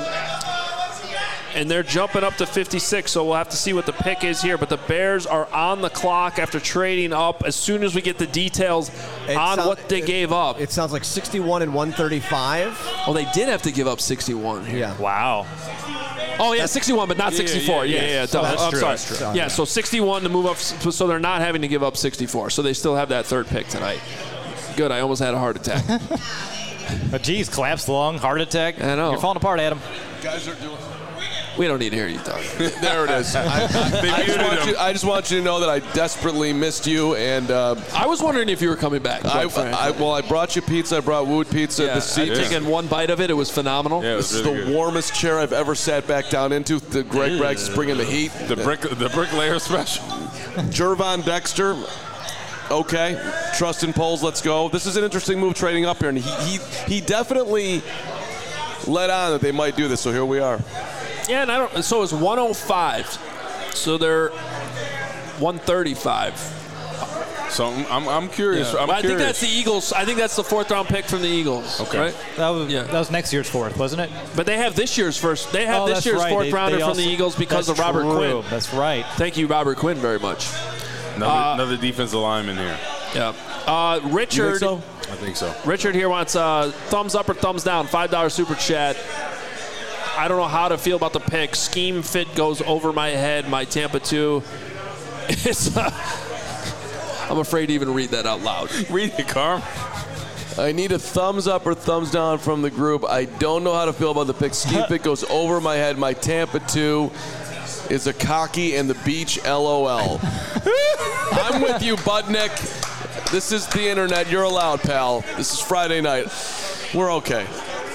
and they're jumping up to fifty-six, so we'll have to see what the pick is here. But the Bears are on the clock after trading up as soon as we get the details It on sound- what they it- gave up. It sounds like sixty-one and one thirty-five. Oh, they did have to give up sixty-one here. Yeah. Wow. Oh, yeah, sixty-one, but not Yeah, sixty-four. yeah, Yeah, yeah. yeah, yeah. So that's I'm true, sorry. that's true. Yeah, so sixty-one to move up, so they're not having to give up sixty-four. So they still have that third pick tonight. Good, I almost had a heart attack. But geez, collapsed lung, heart attack. I know. You're falling apart, Adam. Guys are doing. We don't need to hear you talk. There it is. I, I, I, just want you, I just want you to know that I desperately missed you, and uh, I was wondering if you were coming back. I, quite frankly. I, well, I brought you pizza. I brought Wood Pizza. yeah, the seat. I've taken one bite of it. It was phenomenal. Yeah, it This was is really the good. warmest chair I've ever sat back down into. The Greg Braggs is bringing the heat. The brick, the bricklayer special. Jervon Dexter. Okay, trust in polls. Let's go. This is an interesting move trading up here, and he he, he definitely let on that they might do this. So here we are. Yeah, and I don't. So it's one oh five. So they're one thirty-five. So I'm, I'm, I'm curious. Yeah. I'm But I think curious. that's the Eagles. I think that's the fourth round pick from the Eagles. Okay. Right? That was, Yeah. that was next year's fourth, wasn't it? But they have this year's first. They have Oh, this that's year's right. fourth They- rounder they from also- the Eagles because that's of Robert true. Quinn. That's right. Thank you, Robert Quinn, very much. Another, Uh, another defensive lineman here. Yeah. Uh, Richard. so? I think so. Richard here wants uh, thumbs up or thumbs down. five dollar super chat. I don't know how to feel about the pick. Scheme fit goes over my head. My Tampa two. It's. Uh, I'm afraid to even read that out loud. Read it, Carm. I need a thumbs up or thumbs down from the group. I don't know how to feel about the pick. Scheme fit goes over my head. My Tampa two is a cocky and the beach. L O L. I'm with you, Budnick. This is the internet. You're allowed, pal. This is Friday night. We're okay.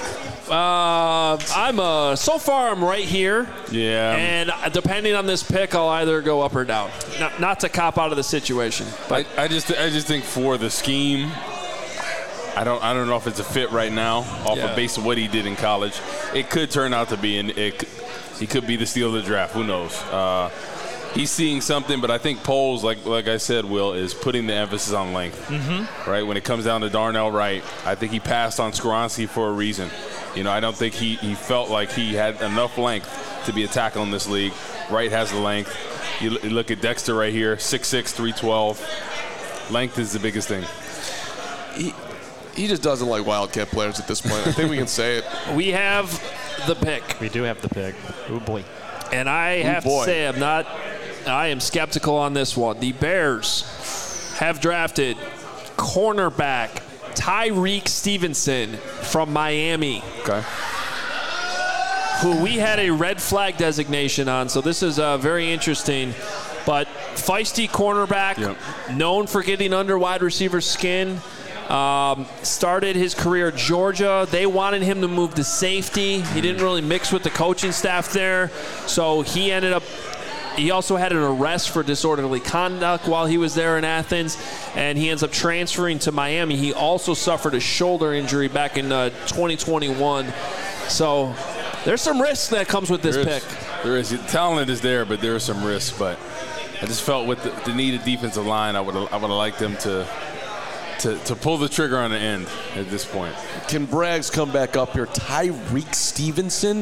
Uh, I'm uh, so far I'm right here. Yeah. And depending on this pick, I'll either go up or down. Not, not to cop out of the situation, but I, I just I just think for the scheme, I don't I don't know if it's a fit right now off Yeah. of base of what he did in college. It could turn out to be, and it he could be the steal of the draft. Who knows? Uh, he's seeing something, but I think Poles, like like I said, Will, is putting the emphasis on length. Mm-hmm. Right when it comes down to Darnell Wright, I think he passed on Skoronski for a reason. You know, I don't think he, he felt like he had enough length to be a tackle in this league. Wright has the length. You, l- you look at Dexter right here, six six, three twelve. Length is the biggest thing. He, he just doesn't like Wildcat players at this point. I think we can say it. we have the pick. We do have the pick. Oh, boy. And I have boy. to say, I'm not, I am skeptical on this one. The Bears have drafted cornerback Tyreek Stevenson from Miami, Okay. who we had a red flag designation on. So this is uh, very interesting. But feisty cornerback, Yep. known for getting under wide receiver skin. Um, started his career at Georgia. They wanted him to move to safety. He didn't really mix with the coaching staff there. So he ended up, he also had an arrest for disorderly conduct while he was there in Athens. And he ends up transferring to Miami. He also suffered a shoulder injury back in uh, twenty twenty-one. So there's some risk that comes with this There pick. is, there is. The talent is there, but there is some risk. But I just felt with the, the needed defensive line, I would I would have liked them to, to to pull the trigger on the end at this point. Can Braggs come back up here? Tyreek Stevenson?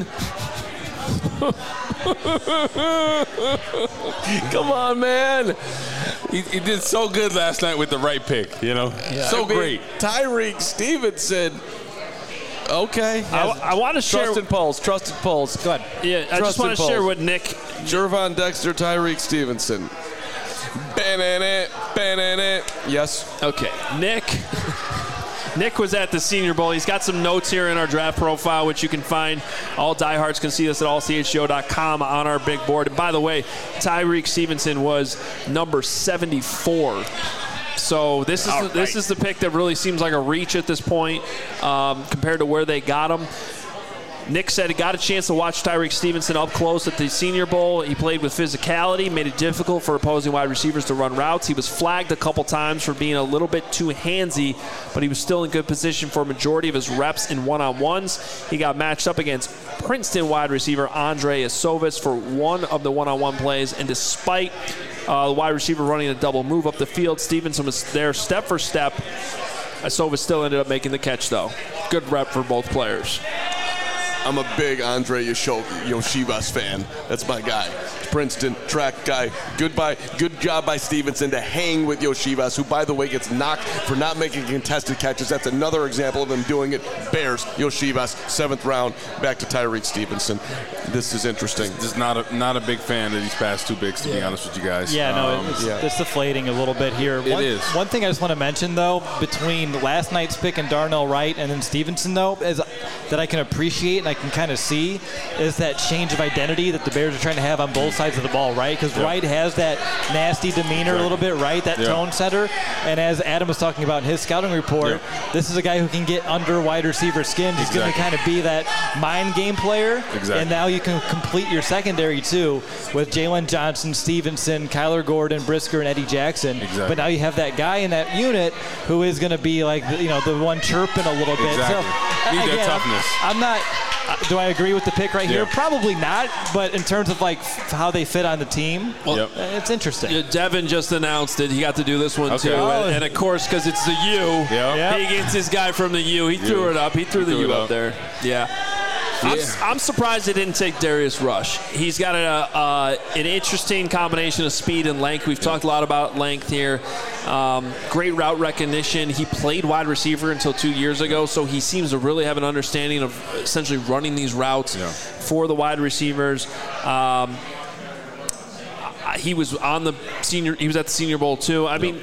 Come on, man. He, he did so good last night with the right pick, you know? So I mean, great. Tyreek Stevenson. Okay. I, I want to share. Trusted polls. Trusted polls. Go ahead. Yeah, I just Trusted want to share polls. what Nick. Jervon Dexter, Tyreek Stevenson. Ban it, ban it. Yes. Okay, Nick. Nick was at the Senior Bowl. He's got some notes here in our draft profile, which you can find. All diehards can see us at all c h g o dot com on our big board. And by the way, Tyrique Stevenson was number seventy-four. So this is the, this is the pick that really seems like a reach at this point um, compared to where they got him. Nick said he got a chance to watch Tyrique Stevenson up close at the Senior Bowl. He played with physicality, made it difficult for opposing wide receivers to run routes. He was flagged a couple times for being a little bit too handsy, but he was still in good position for a majority of his reps in one-on-ones. He got matched up against Princeton wide receiver Andre Isovis for one of the one-on-one plays, and despite uh, the wide receiver running a double move up the field, Stevenson was there step for step. Isovis still ended up making the catch, though. Good rep for both players. I'm a big Andre Yoshivas fan. That's my guy. Princeton track guy. Goodbye. Good job by Stevenson to hang with Yoshivas, who, by the way, gets knocked for not making contested catches. That's another example of him doing it. Bears, Yoshivas, seventh round, back to Tyrique Stevenson. This is interesting. Just not a not a big fan of these past two picks, to yeah. be honest with you guys. Yeah, no, um, it's, yeah. it's deflating a little bit here. It one, is. One thing I just want to mention, though, between last night's pick and Darnell Wright and then Stevenson, though, is that I can appreciate and I can kind of see is that change of identity that the Bears are trying to have on both sides of the ball, right? Because yep. Wright has that nasty demeanor right. a little bit, right? That yep. tone setter. And as Adam was talking about in his scouting report, yep. this is a guy who can get under wide receiver skin. He's exactly. going to kind of be that mind game player. Exactly. And now you can complete your secondary, too, with Jalen Johnson, Stevenson, Kyler Gordon, Brisker, and Eddie Jackson. Exactly. But now you have that guy in that unit who is going to be like, you know, the one chirping a little bit. Exactly. So, Need again, that toughness. I'm, I'm not – do I agree with the pick right yeah. here? Probably not. But in terms of, like, f- how they fit on the team, well, yep. it's interesting. Yeah, Devin just announced it. He got to do this one, okay. too. Oh. And, and, of course, because it's the U, yep. Yep. he gets his guy from the U. He U. threw it up. He threw he the threw U up. up there. Yeah. Yeah. I'm, I'm surprised they didn't take Darius Rush. He's got a, uh, an interesting combination of speed and length. We've yeah. talked a lot about length here. Um, great route recognition. He played wide receiver until two years ago, so he seems to really have an understanding of essentially running these routes yeah. for the wide receivers. Um, he was on the senior. He was at the Senior Bowl too. I yep. mean,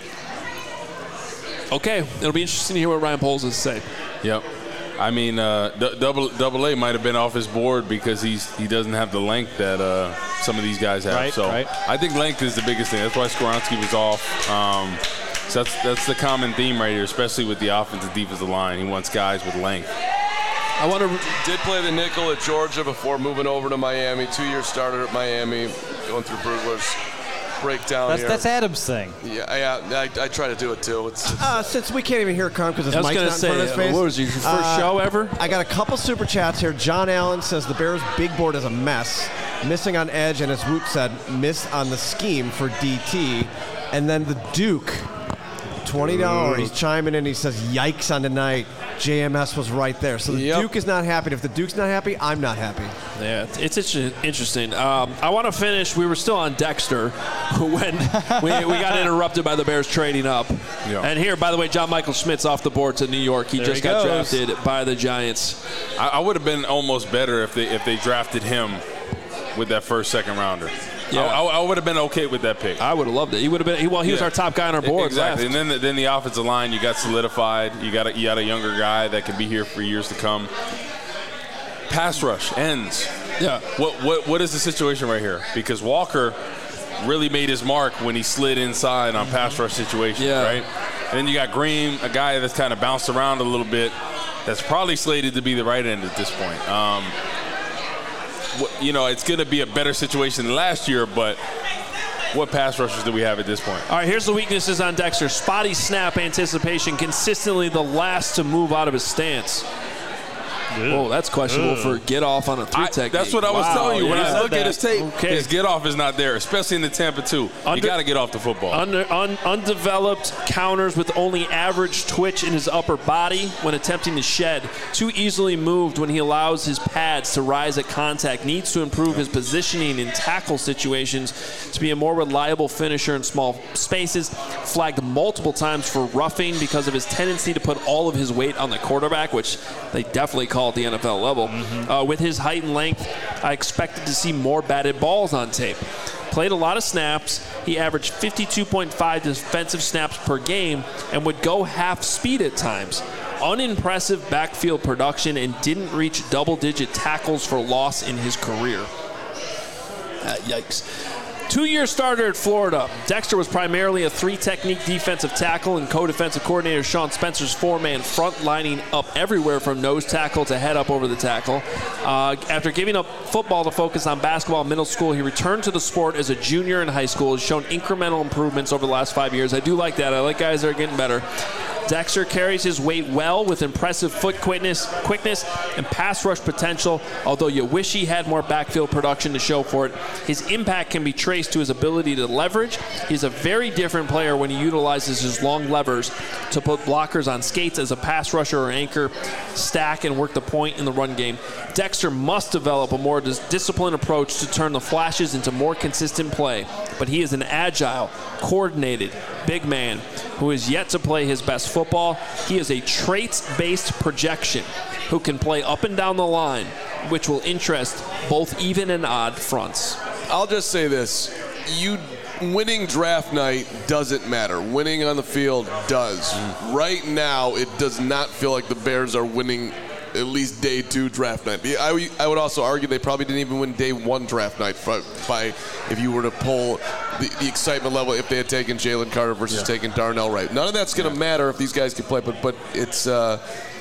okay, it'll be interesting to hear what Ryan Poles has to say. Yep. I mean, uh, d- double double A might have been off his board because he's he doesn't have the length that uh, some of these guys have. Right, so right. I think length is the biggest thing. That's why Skoronski was off. Um, so that's that's the common theme right here, especially with the offensive defensive line. He wants guys with length. I want to did play the nickel at Georgia before moving over to Miami. Two year starter at Miami, going through Brugler's breakdown That's, here. that's Adam's thing. Yeah, yeah. I, I try to do it too. It's, it's Uh, since we can't even hear Carm because his I was mic's going not to in front of say, his face. what was your first Uh, show ever? I got a couple super chats here. John Allen says the Bears' big board is a mess. Missing on edge, and as Woot said, miss on the scheme for D T. And then the Duke, twenty dollars. He's chiming in. He says, yikes on tonight. J M S was right there. So the Yep. Duke is not happy. If the Duke's not happy, I'm not happy. Yeah, it's, it's interesting. Um, I want to finish. We were still on Dexter when we, we got interrupted by the Bears trading up. Yeah. And here, by the way, John Michael Schmitz off the board to New York. He There just he got goes. drafted by the Giants. I, I would have been almost better if they if they drafted him with that first second rounder. Yeah. I, I, I would have been okay with that pick. I would have loved it. He would have been. He, well, he was Yeah. our top guy on our board. Exactly, left. and then the, then the offensive line, you got solidified. You got a, you got a younger guy that can be here for years to come. Pass rush ends. Yeah. What what what is the situation right here? Because Walker really made his mark when he slid inside on pass rush situations, Yeah. right? And then you got Green, a guy that's kind of bounced around a little bit. That's probably slated to be the right end at this point. Um, you know, it's going to be a better situation than last year, but what pass rushers do we have at this point? All right, here's the weaknesses on Dexter. Spotty snap anticipation, consistently the last to move out of his stance. Oh, that's questionable for get off on a three I, technique. that's what I was Wow, telling you. When yeah. I look at his tape, Okay. his get off is not there, especially in the Tampa two. Under- you got to get off the football. Under, un, undeveloped counters with only average twitch in his upper body when attempting to shed. Too easily moved when he allows his pads to rise at contact. Needs to improve his positioning in tackle situations to be a more reliable finisher in small spaces. Flagged multiple times for roughing because of his tendency to put all of his weight on the quarterback, which they definitely call at the N F L level. Mm-hmm. Uh, with his height and length, I expected to see more batted balls on tape. Played a lot of snaps. He averaged fifty-two point five defensive snaps per game and would go half speed at times. unimpressive backfield production and didn't reach double-digit tackles for loss in his career. Uh, yikes. Two-year starter at Florida. Dexter was primarily a three-technique defensive tackle, and co-defensive coordinator Sean Spencer's four-man front, lining up everywhere from nose tackle to head up over the tackle. Uh, after giving up football to focus on basketball in middle school, he returned to the sport as a junior in high school. Has shown incremental improvements over the last five years. I do like that. I like guys that are getting better. Dexter carries his weight well with impressive foot quickness, quickness and pass rush potential, although you wish he had more backfield production to show for it. His impact can be traced to his ability to leverage. He's a very different player when he utilizes his long levers to put blockers on skates as a pass rusher or anchor, stack, and work the point in the run game. Dexter must develop a more dis- disciplined approach to turn the flashes into more consistent play, but he is an agile, coordinated, big man who is yet to play his best football. He is a traits-based projection who can play up and down the line, which will interest both even and odd fronts. I'll just say this. You winning draft night doesn't matter. Winning on the field does. Mm. Right now, it does not feel like the Bears are winning at least day two draft night. I, I would also argue they probably didn't even win day one draft night by if you were to pull the, the excitement level if they had taken Jalen Carter versus yeah. taking Darnell Wright. None of that's going to yeah. matter if these guys can play, but but it's uh,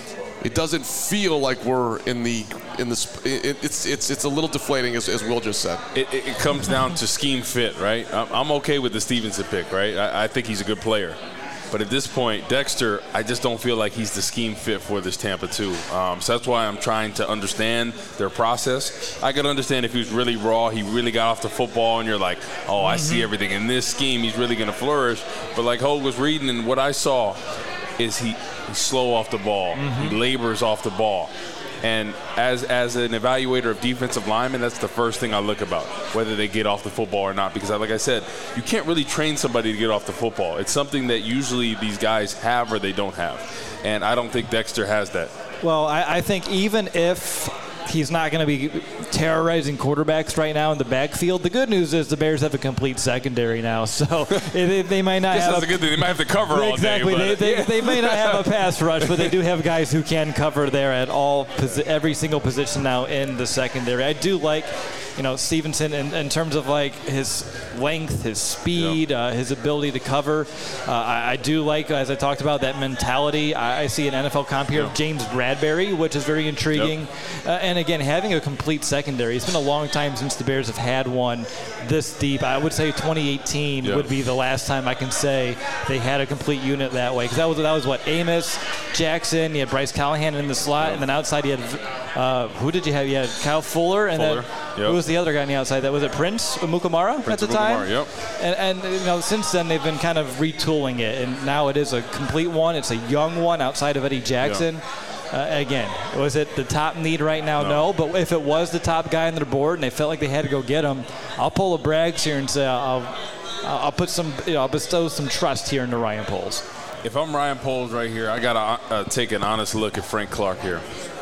it doesn't feel like we're in the in the it, it's it's it's a little deflating as, as Will just said. It, it, it comes down to scheme fit, right? I'm, I'm okay with the Stevenson pick, right? I, I think he's a good player. But at this point, Dexter, I just don't feel like he's the scheme fit for this Tampa two. Um, so that's why I'm trying to understand their process. I could understand if he was really raw, he really got off the football, and you're like, oh, mm-hmm. I see everything. In this scheme, he's really going to flourish. But like Hogue was reading, and what I saw is he, he's slow off the ball. Mm-hmm. He labors off the ball. And as as an evaluator of defensive linemen, that's the first thing I look about, whether they get off the football or not. Because, like I said, you can't really train somebody to get off the football. It's something that usually these guys have or they don't have. And I don't think Dexter has that. Well, I, I think even if he's not going to be terrorizing quarterbacks right now in the backfield, the good news is the Bears have a complete secondary now, so they, they might not have that's a, a good thing. They might have to cover all exactly. day. Exactly. They, they, they may not have a pass rush, but they do have guys who can cover there at all every single position now in the secondary. I do like, you know, Stevenson in, in terms of like his length, his speed, yep. uh, his ability to cover. Uh, I, I do like, as I talked about, that mentality. I, I see an N F L comp here yep. of James Bradberry, which is very intriguing. Yep. Uh, and again, having a complete secondary. It's been a long time since the Bears have had one this deep. I would say twenty eighteen yep. would be the last time I can say they had a complete unit that way. Because that was, that was what, Amos, Jackson, you had Bryce Callahan in the slot, yep. and then outside you had, uh, who did you have? You had Kyle Fuller, and Fuller. then Yep. who was the other guy on the outside? That was it Prince Mukamara Prince at the time? Mukamara, yep. And, and you know, since then they've been kind of retooling it, and now it is a complete one. It's a young one outside of Eddie Jackson. Yep. Uh, again, was it the top need right now? No. no. But if it was the top guy on their board and they felt like they had to go get him, I'll pull a Braggs here and say I'll I'll put some, you know, I'll bestow some trust here into Ryan Poles. If I'm Ryan Poles right here, I gotta uh, take an honest look at Frank Clark here.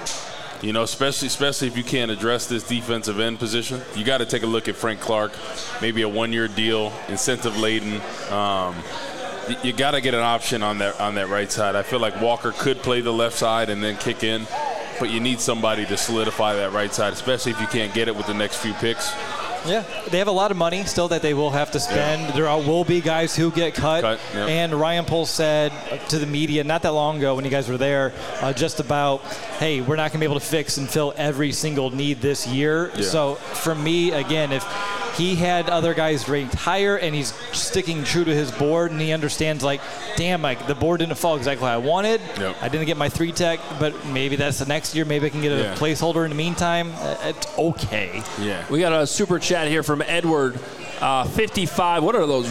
You know, especially especially if you can't address this defensive end position, you got to take a look at Frank Clark, maybe a one-year deal, incentive-laden. Um, you got to get an option on that on that right side. I feel like Walker could play the left side and then kick in, but you need somebody to solidify that right side, especially if you can't get it with the next few picks. Yeah, they have a lot of money still that they will have to spend. Yeah. There are, will be guys who get cut. cut yep. And Ryan Poles said to the media not that long ago when you guys were there, uh, just about, hey, we're not going to be able to fix and fill every single need this year. Yeah. So for me, again, if he had other guys ranked higher and he's sticking true to his board and he understands, like, damn, like the board didn't fall exactly how I wanted. Yep. I didn't get my three tech, but maybe that's the next year. Maybe I can get a yeah. placeholder in the meantime. It's okay. Yeah. We got a super chat here from Edward, uh, fifty-five. What are those?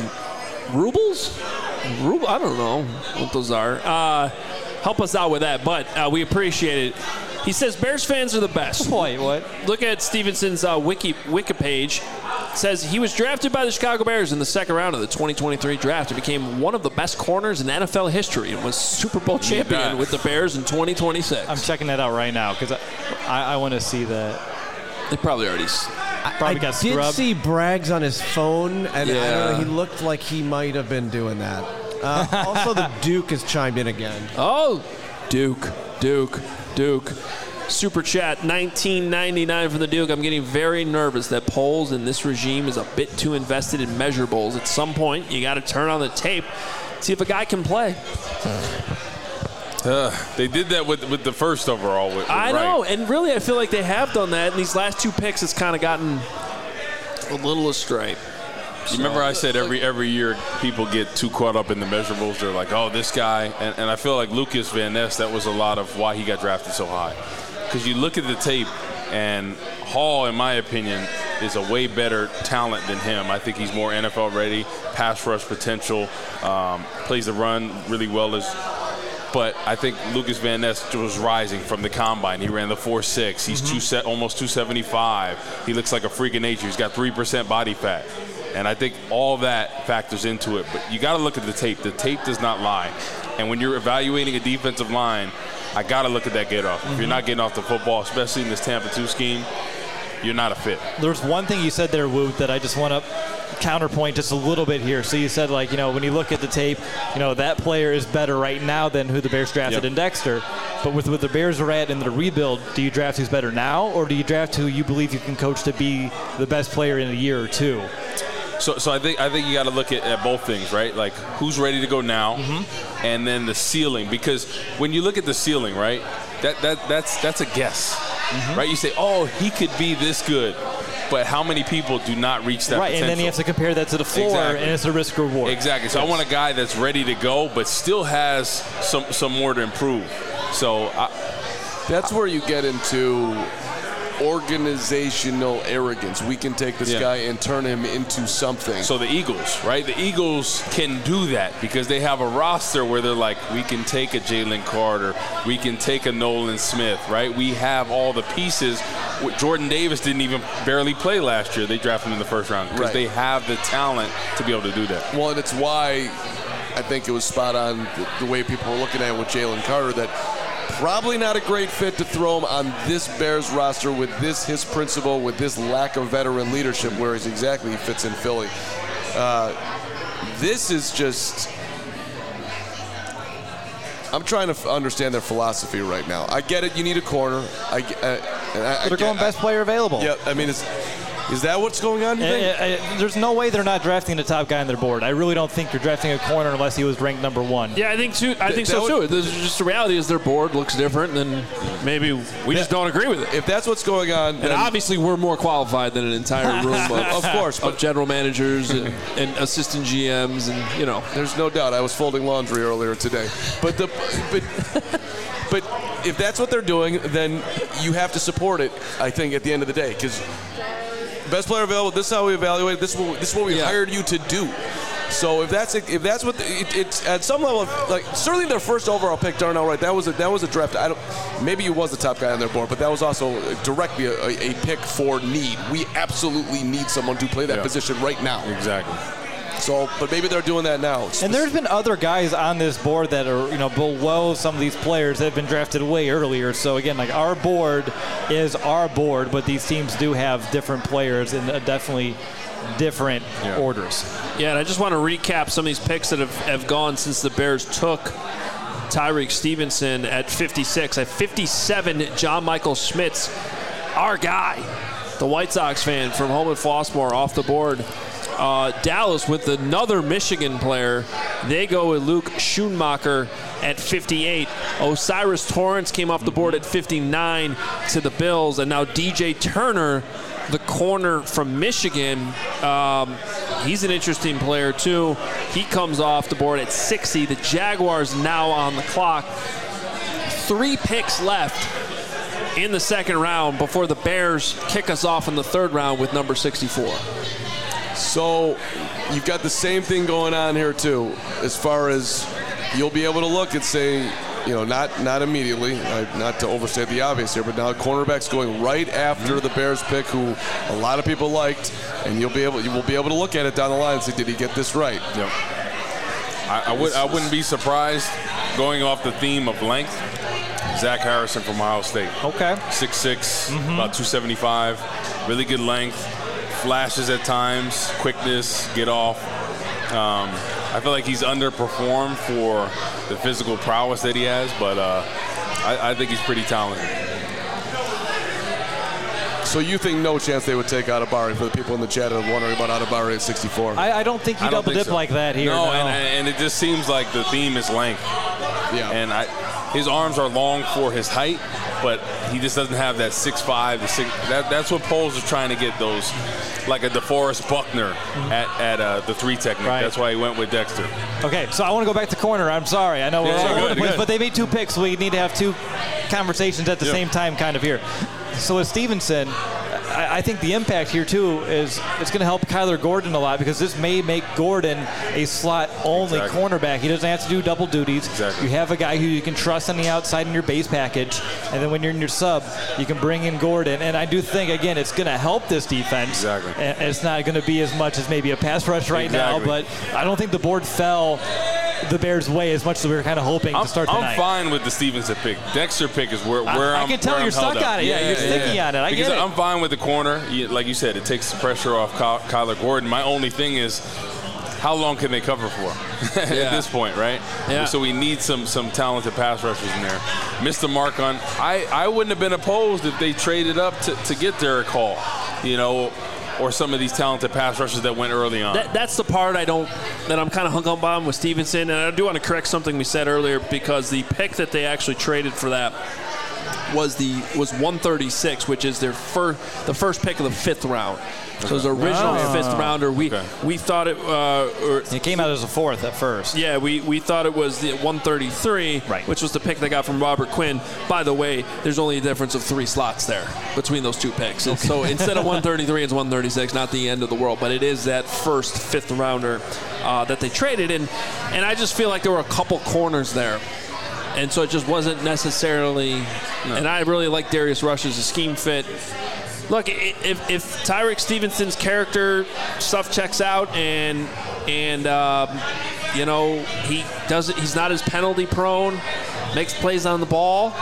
Rubles? Ruble? I don't know what those are. Uh, help us out with that, but uh, we appreciate it. He says Bears fans are the best. Wait, what? Look at Stevenson's uh, wiki wiki page. It says he was drafted by the Chicago Bears in the second round of the twenty twenty-three draft and became one of the best corners in N F L history and was Super Bowl champion with the Bears in twenty twenty-six. I'm checking that out right now because I, I, I want to see that. They probably already probably I got did scrubbed. see Braggs on his phone, and Yeah. I don't know, he looked like he might have been doing that. Uh, also, the Duke has chimed in again. Oh, Duke, Duke, Duke. Super chat, nineteen ninety-nine from the Duke. I'm getting very nervous that polls in this regime is a bit too invested in measurables. At some point, you got to turn on the tape, see if a guy can play. Uh, they did that with with the first overall. With, with I Wright. know, and really I feel like they have done that. And these last two picks, it's kind of gotten a little astray. You remember I said every every year people get too caught up in the measurables. They're like, oh, this guy. And, and I feel like Lucas Van Ness, that was a lot of why he got drafted so high. Because you look at the tape, and Hall, in my opinion, is a way better talent than him. I think he's more N F L ready, pass rush potential, um, plays the run really well. As, but I think Lucas Van Ness was rising from the combine. He ran the four six. He's mm-hmm. two set, almost two seventy-five. He looks like a freak of nature. He's got three percent body fat. And I think all that factors into it. But you got to look at the tape. The tape does not lie. And when you're evaluating a defensive line, I got to look at that get off. Mm-hmm. If you're not getting off the football, especially in this Tampa two scheme, you're not a fit. There's one thing you said there, Woot, that I just want to counterpoint just a little bit here. So you said, like, you know, when you look at the tape, you know, that player is better right now than who the Bears drafted yep. in Dexter. But with what the Bears are at in the rebuild, do you draft who's better now, or do you draft who you believe you can coach to be the best player in a year or two? So, so I think I think you got to look at, at both things, right? Like who's ready to go now, mm-hmm. and then the ceiling. Because when you look at the ceiling, right, that that that's that's a guess, mm-hmm. right? You say, oh, he could be this good, but how many people do not reach that? Right, potential? and then you have to compare that to the floor, exactly. and it's a risk reward. Exactly. So yes. I want a guy that's ready to go, but still has some some more to improve. So I, that's where you get into organizational arrogance. We can take this yeah. guy and turn him into something. So the Eagles, right? The Eagles can do that because they have a roster where they're like, we can take a Jalen Carter, we can take a Nolan Smith, right? We have all the pieces. Jordan Davis didn't even barely play last year. They drafted him in the first round because right. they have the talent to be able to do that. Well, and it's why I think it was spot on the, the way people were looking at it with Jalen Carter, that probably not a great fit to throw him on this Bears roster with this his principle, with this lack of veteran leadership, whereas exactly he fits in Philly. Uh, this is just – I'm trying to f- understand their philosophy right now. I get it. You need a corner. I, uh, I, I They're going get, best player available. Yeah, I mean, it's – is that what's going on, you think? Uh, uh, there's no way they're not drafting the top guy on their board. I really don't think you're drafting a corner unless he was ranked number one. Yeah, I think too. I think that so would, too. There's just the reality is their board looks different, and maybe we just don't agree with it. If that's what's going on, and obviously we're more qualified than an entire room of, of course, of general managers and, and assistant G Ms, and you know. There's no doubt. I was folding laundry earlier today, but the but. But if that's what they're doing, then you have to support it, I think, at the end of the day. Because best player available, this is how we evaluate it. This is what, this is what we yeah. hired you to do. So if that's if that's what the, it, it's at some level, like certainly their first overall pick, Darnell Wright, that was a, that was a draft. I don't, maybe he was the top guy on their board, but that was also directly a, a pick for need. We absolutely need someone to play that yeah. position right now. Exactly. So, but maybe they're doing that now. And there's been other guys on this board that are, you know, below some of these players that have been drafted way earlier. So again, like our board is our board, but these teams do have different players in definitely different yeah. orders. Yeah, and I just want to recap some of these picks that have, have gone since the Bears took Tyreek Stevenson at fifty-six. At fifty-seven, John Michael Schmitz, our guy, the White Sox fan from home at Flossmoor, off the board. Uh, Dallas with another Michigan player. They go with Luke Schoonmaker at fifty-eight. Osiris Torrance came off the board at fifty-nine to the Bills. And now D J Turner, the corner from Michigan. Um, he's an interesting player, too. He comes off the board at sixty. The Jaguars now on the clock. Three picks left in the second round before the Bears kick us off in the third round with number sixty-four. So you've got the same thing going on here too, as far as you'll be able to look and say, you know, not not immediately, uh, not to overstate the obvious here, but now cornerback's going right after the Bears pick, who a lot of people liked, and you'll be able you will be able to look at it down the line and say, did he get this right? Yep. I, I would I wouldn't be surprised, going off the theme of length, Zach Harrison from Ohio State. Okay. six six, mm-hmm. about two seventy-five, really good length. Flashes at times, quickness, get off. Um, I feel like he's underperformed for the physical prowess that he has, but uh, I, I think he's pretty talented. So you think no chance they would take Adebawore for the people in the chat that are wondering about Adebawore at sixty-four? I, I don't think you double dip so. like that here. No, no. And, and it just seems like the theme is length. Yeah. And I, his arms are long for his height, but he just doesn't have that six five, the six. That, that's what Poles are trying to get those, like a DeForest Buckner mm-hmm. at, at uh, the three technique. Right. That's why he went with Dexter. Okay, so I want to go back to corner. I'm sorry. I know we're yeah, all good, good. but they made two picks. So we need to have two conversations at the yep. same time kind of here. So with Stevenson, I, I think the impact here, too, is it's going to help Kyler Gordon a lot because this may make Gordon a slot-only exactly. cornerback. He doesn't have to do double duties. Exactly. You have a guy who you can trust on the outside in your base package, and then when you're in your sub, you can bring in Gordon. And I do think, again, it's going to help this defense. Exactly. And it's not going to be as much as maybe a pass rush right exactly. now, but I don't think the board fell the Bears' way as much as we were kind of hoping I'm, to start I'm tonight. fine with the Stevenson pick. Dexter pick is where, where I, I'm I can tell where you're I'm stuck on it. Yeah, yeah, you're yeah, sticky yeah. on it. I because get it. I'm fine with the corner. You, like you said, it takes the pressure off Ky- Kyler Gordon. My only thing is, how long can they cover for at yeah. this point, right? Yeah. So we need some some talented pass rushers in there. Missed the mark on. I, I wouldn't have been opposed if they traded up to, to get Derek Hall, you know, or some of these talented pass rushers that went early on. That, that's the part I don't, that I'm kind of hung up on with Stevenson. And I do want to correct something we said earlier because the pick that they actually traded for that was the was one thirty-six, which is their first the first pick of the fifth round. So it was the original oh. fifth rounder. We okay. we thought it. Uh, or, it came out as a fourth at first. Yeah, we, we thought it was the one thirty-three, right. which was the pick they got from Robert Quinn. By the way, there's only a difference of three slots there between those two picks. Okay. So instead of one thirty-three, it's one thirty-six. Not the end of the world, but it is that first fifth rounder uh, that they traded. And and I just feel like there were a couple corners there. And so it just wasn't necessarily. No. And I really like Darius Rush as a scheme fit. Look, if, if Tyrick Stevenson's character stuff checks out and and um, you know he doesn't, he's not as penalty prone, makes plays on the ball,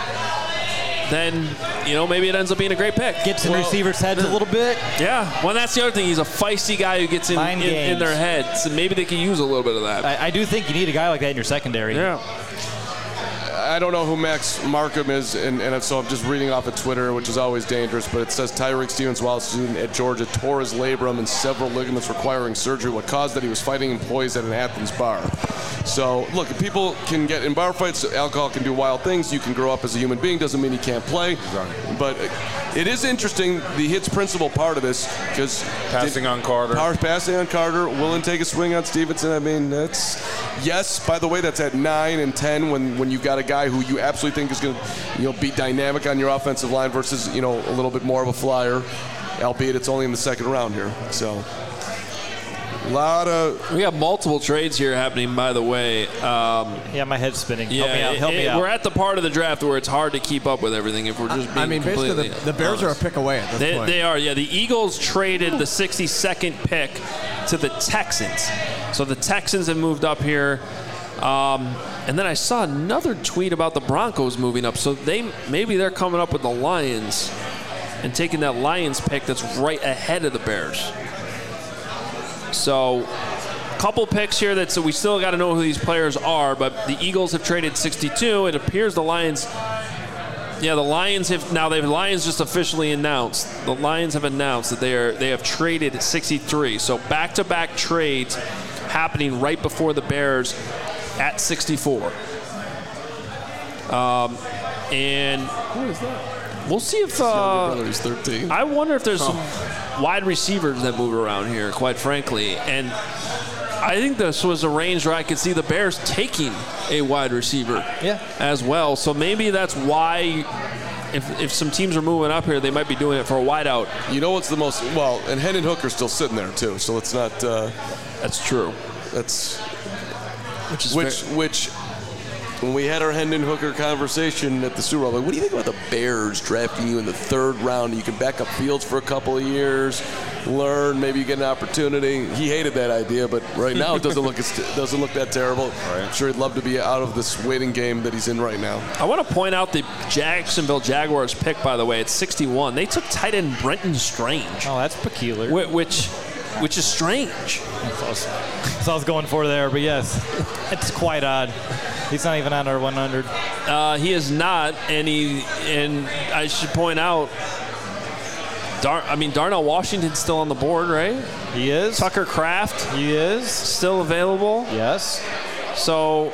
then you know maybe it ends up being a great pick. Gets in well, receivers' heads a little bit. Yeah, well that's the other thing. He's a feisty guy who gets in in, in their heads, and maybe they can use a little bit of that. I, I do think you need a guy like that in your secondary. Yeah. I don't know who Max Markham is, and, and so I'm just reading off of Twitter, which is always dangerous, but it says Tyrick Stevens, while a student at Georgia, tore his labrum and several ligaments requiring surgery. What caused that? He was fighting employees at an Athens bar. So, look, if people can get in bar fights, alcohol can do wild things. You can grow up as a human being. Doesn't mean you can't play. Exactly. But it is interesting, the hits principle part of this, because passing on Carter. Passing on Carter, willing to take a swing on Stevenson. I mean, that's, yes, by the way, that's at nine and ten when, when you've got a guy who you absolutely think is going to, you know, be dynamic on your offensive line versus, you know, a little bit more of a flyer, albeit it's only in the second round here. So, a lot of... We got multiple trades here happening, by the way. Um, yeah, my head's spinning. Yeah, help me out. Help it, me out. We're at the part of the draft where it's hard to keep up with everything if we're just being I mean, basically, the, the Bears honest. are a pick away at this they, point. They are, yeah. The Eagles traded the sixty-second pick to the Texans. So the Texans have moved up here. Um, and then I saw another tweet about the Broncos moving up. So they maybe they're coming up with the Lions and taking that Lions pick that's right ahead of the Bears. So a couple picks here that so we still got to know who these players are. But the Eagles have traded sixty-two. It appears the Lions. Yeah, the Lions have now. They've Lions just officially announced. The Lions have announced that they are they have traded sixty-three. So back-to-back trades happening right before the Bears at sixty-four. Um, and who is that? We'll see if uh, brother's thirteen. I wonder if there's oh. some wide receivers that move around here. Quite frankly, and I think this was a range where I could see the Bears taking a wide receiver yeah. as well. So maybe that's why if if some teams are moving up here, they might be doing it for a wideout. You know what's the most, well, and Hendon Hooker's still sitting there too, so it's not. Uh, that's true. That's which is which very, which. When we had our Hendon Hooker conversation at the Super Bowl, like, what do you think about the Bears drafting you in the third round? You can back up Fields for a couple of years, learn, maybe you get an opportunity. He hated that idea, but right now it doesn't look it doesn't look that terrible. Right. I'm sure he'd love to be out of this waiting game that he's in right now. I want to point out the Jacksonville Jaguars pick, by the way, at sixty-one. They took tight end Brenton Strange. Oh, that's peculiar. Which which is strange. That's what I was going for there, but yes, it's quite odd. He's not even under one hundred. Uh, he is not, and he and I should point out, Dar- I mean Darnell Washington's still on the board, right? He is. Tucker Kraft, he is still available. Yes. So,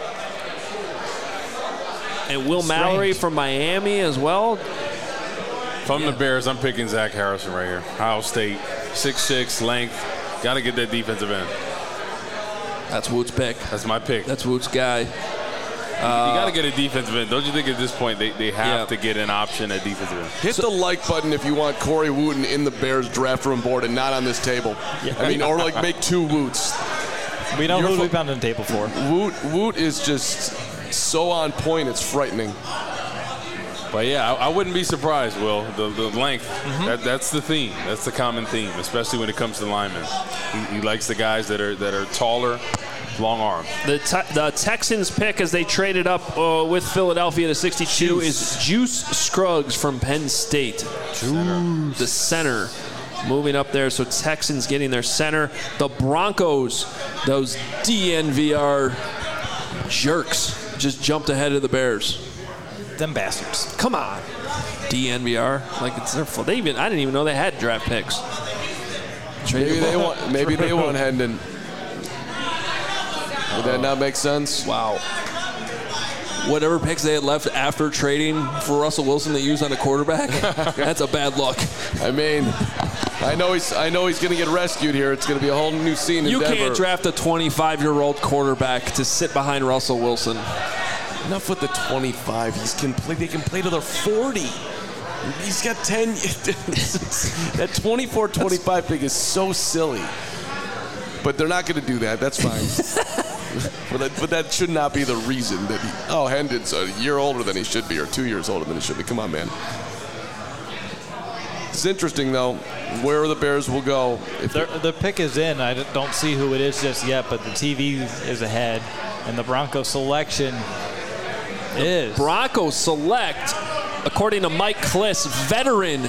and Will Strange. Mallory from Miami as well. If I'm yeah. the Bears, I'm picking Zach Harrison right here. Ohio State, six six, length. Got to get that defensive end. That's Woot's pick. That's my pick. That's Woot's guy. Uh, you got to get a defensive end. Don't you think at this point they, they have yeah. to get an option at defensive end? Hit so, the like button if you want Corey Wooten in the Bears draft room board and not on this table. Yeah. I mean, or like make two Woots. We know who we've been on the table for. Woot, Woot is just so on point, it's frightening. But yeah, I, I wouldn't be surprised, Will. The, the length, mm-hmm. that, that's the theme. That's the common theme, especially when it comes to linemen. He, he likes the guys that are that are taller, long arms. The te- the Texans pick as they traded up uh, with Philadelphia to sixty-two Juice. is Juice Scruggs from Penn State. Juice. The center. Moving up there, so Texans getting their center. The Broncos, those D N V R jerks, just jumped ahead of the Bears. Them bastards. Come on. D N V R, like it's their fault. They even I didn't even know they had draft picks. Maybe they want. Maybe they want Hendon. Would that not make sense? Wow. Whatever picks they had left after trading for Russell Wilson they used on a quarterback, that's a bad look. I mean, I know he's I know he's going to get rescued here. It's going to be a whole new scene in you Denver. You can't draft a twenty-five-year-old quarterback to sit behind Russell Wilson. Enough with the twenty-five. He's can play. They can play till they're forty. He's got ten. That twenty-four twenty-five pick is so silly. But they're not going to do that. That's fine. But that, but that should not be the reason that he, oh, Hendon's a year older than he should be or two years older than he should be. Come on, man. It's interesting, though, where the Bears will go. If the pick is in. I don't see who it is just yet, but the T V is ahead. And the Broncos selection is. Broncos select, according to Mike Kliss, veteran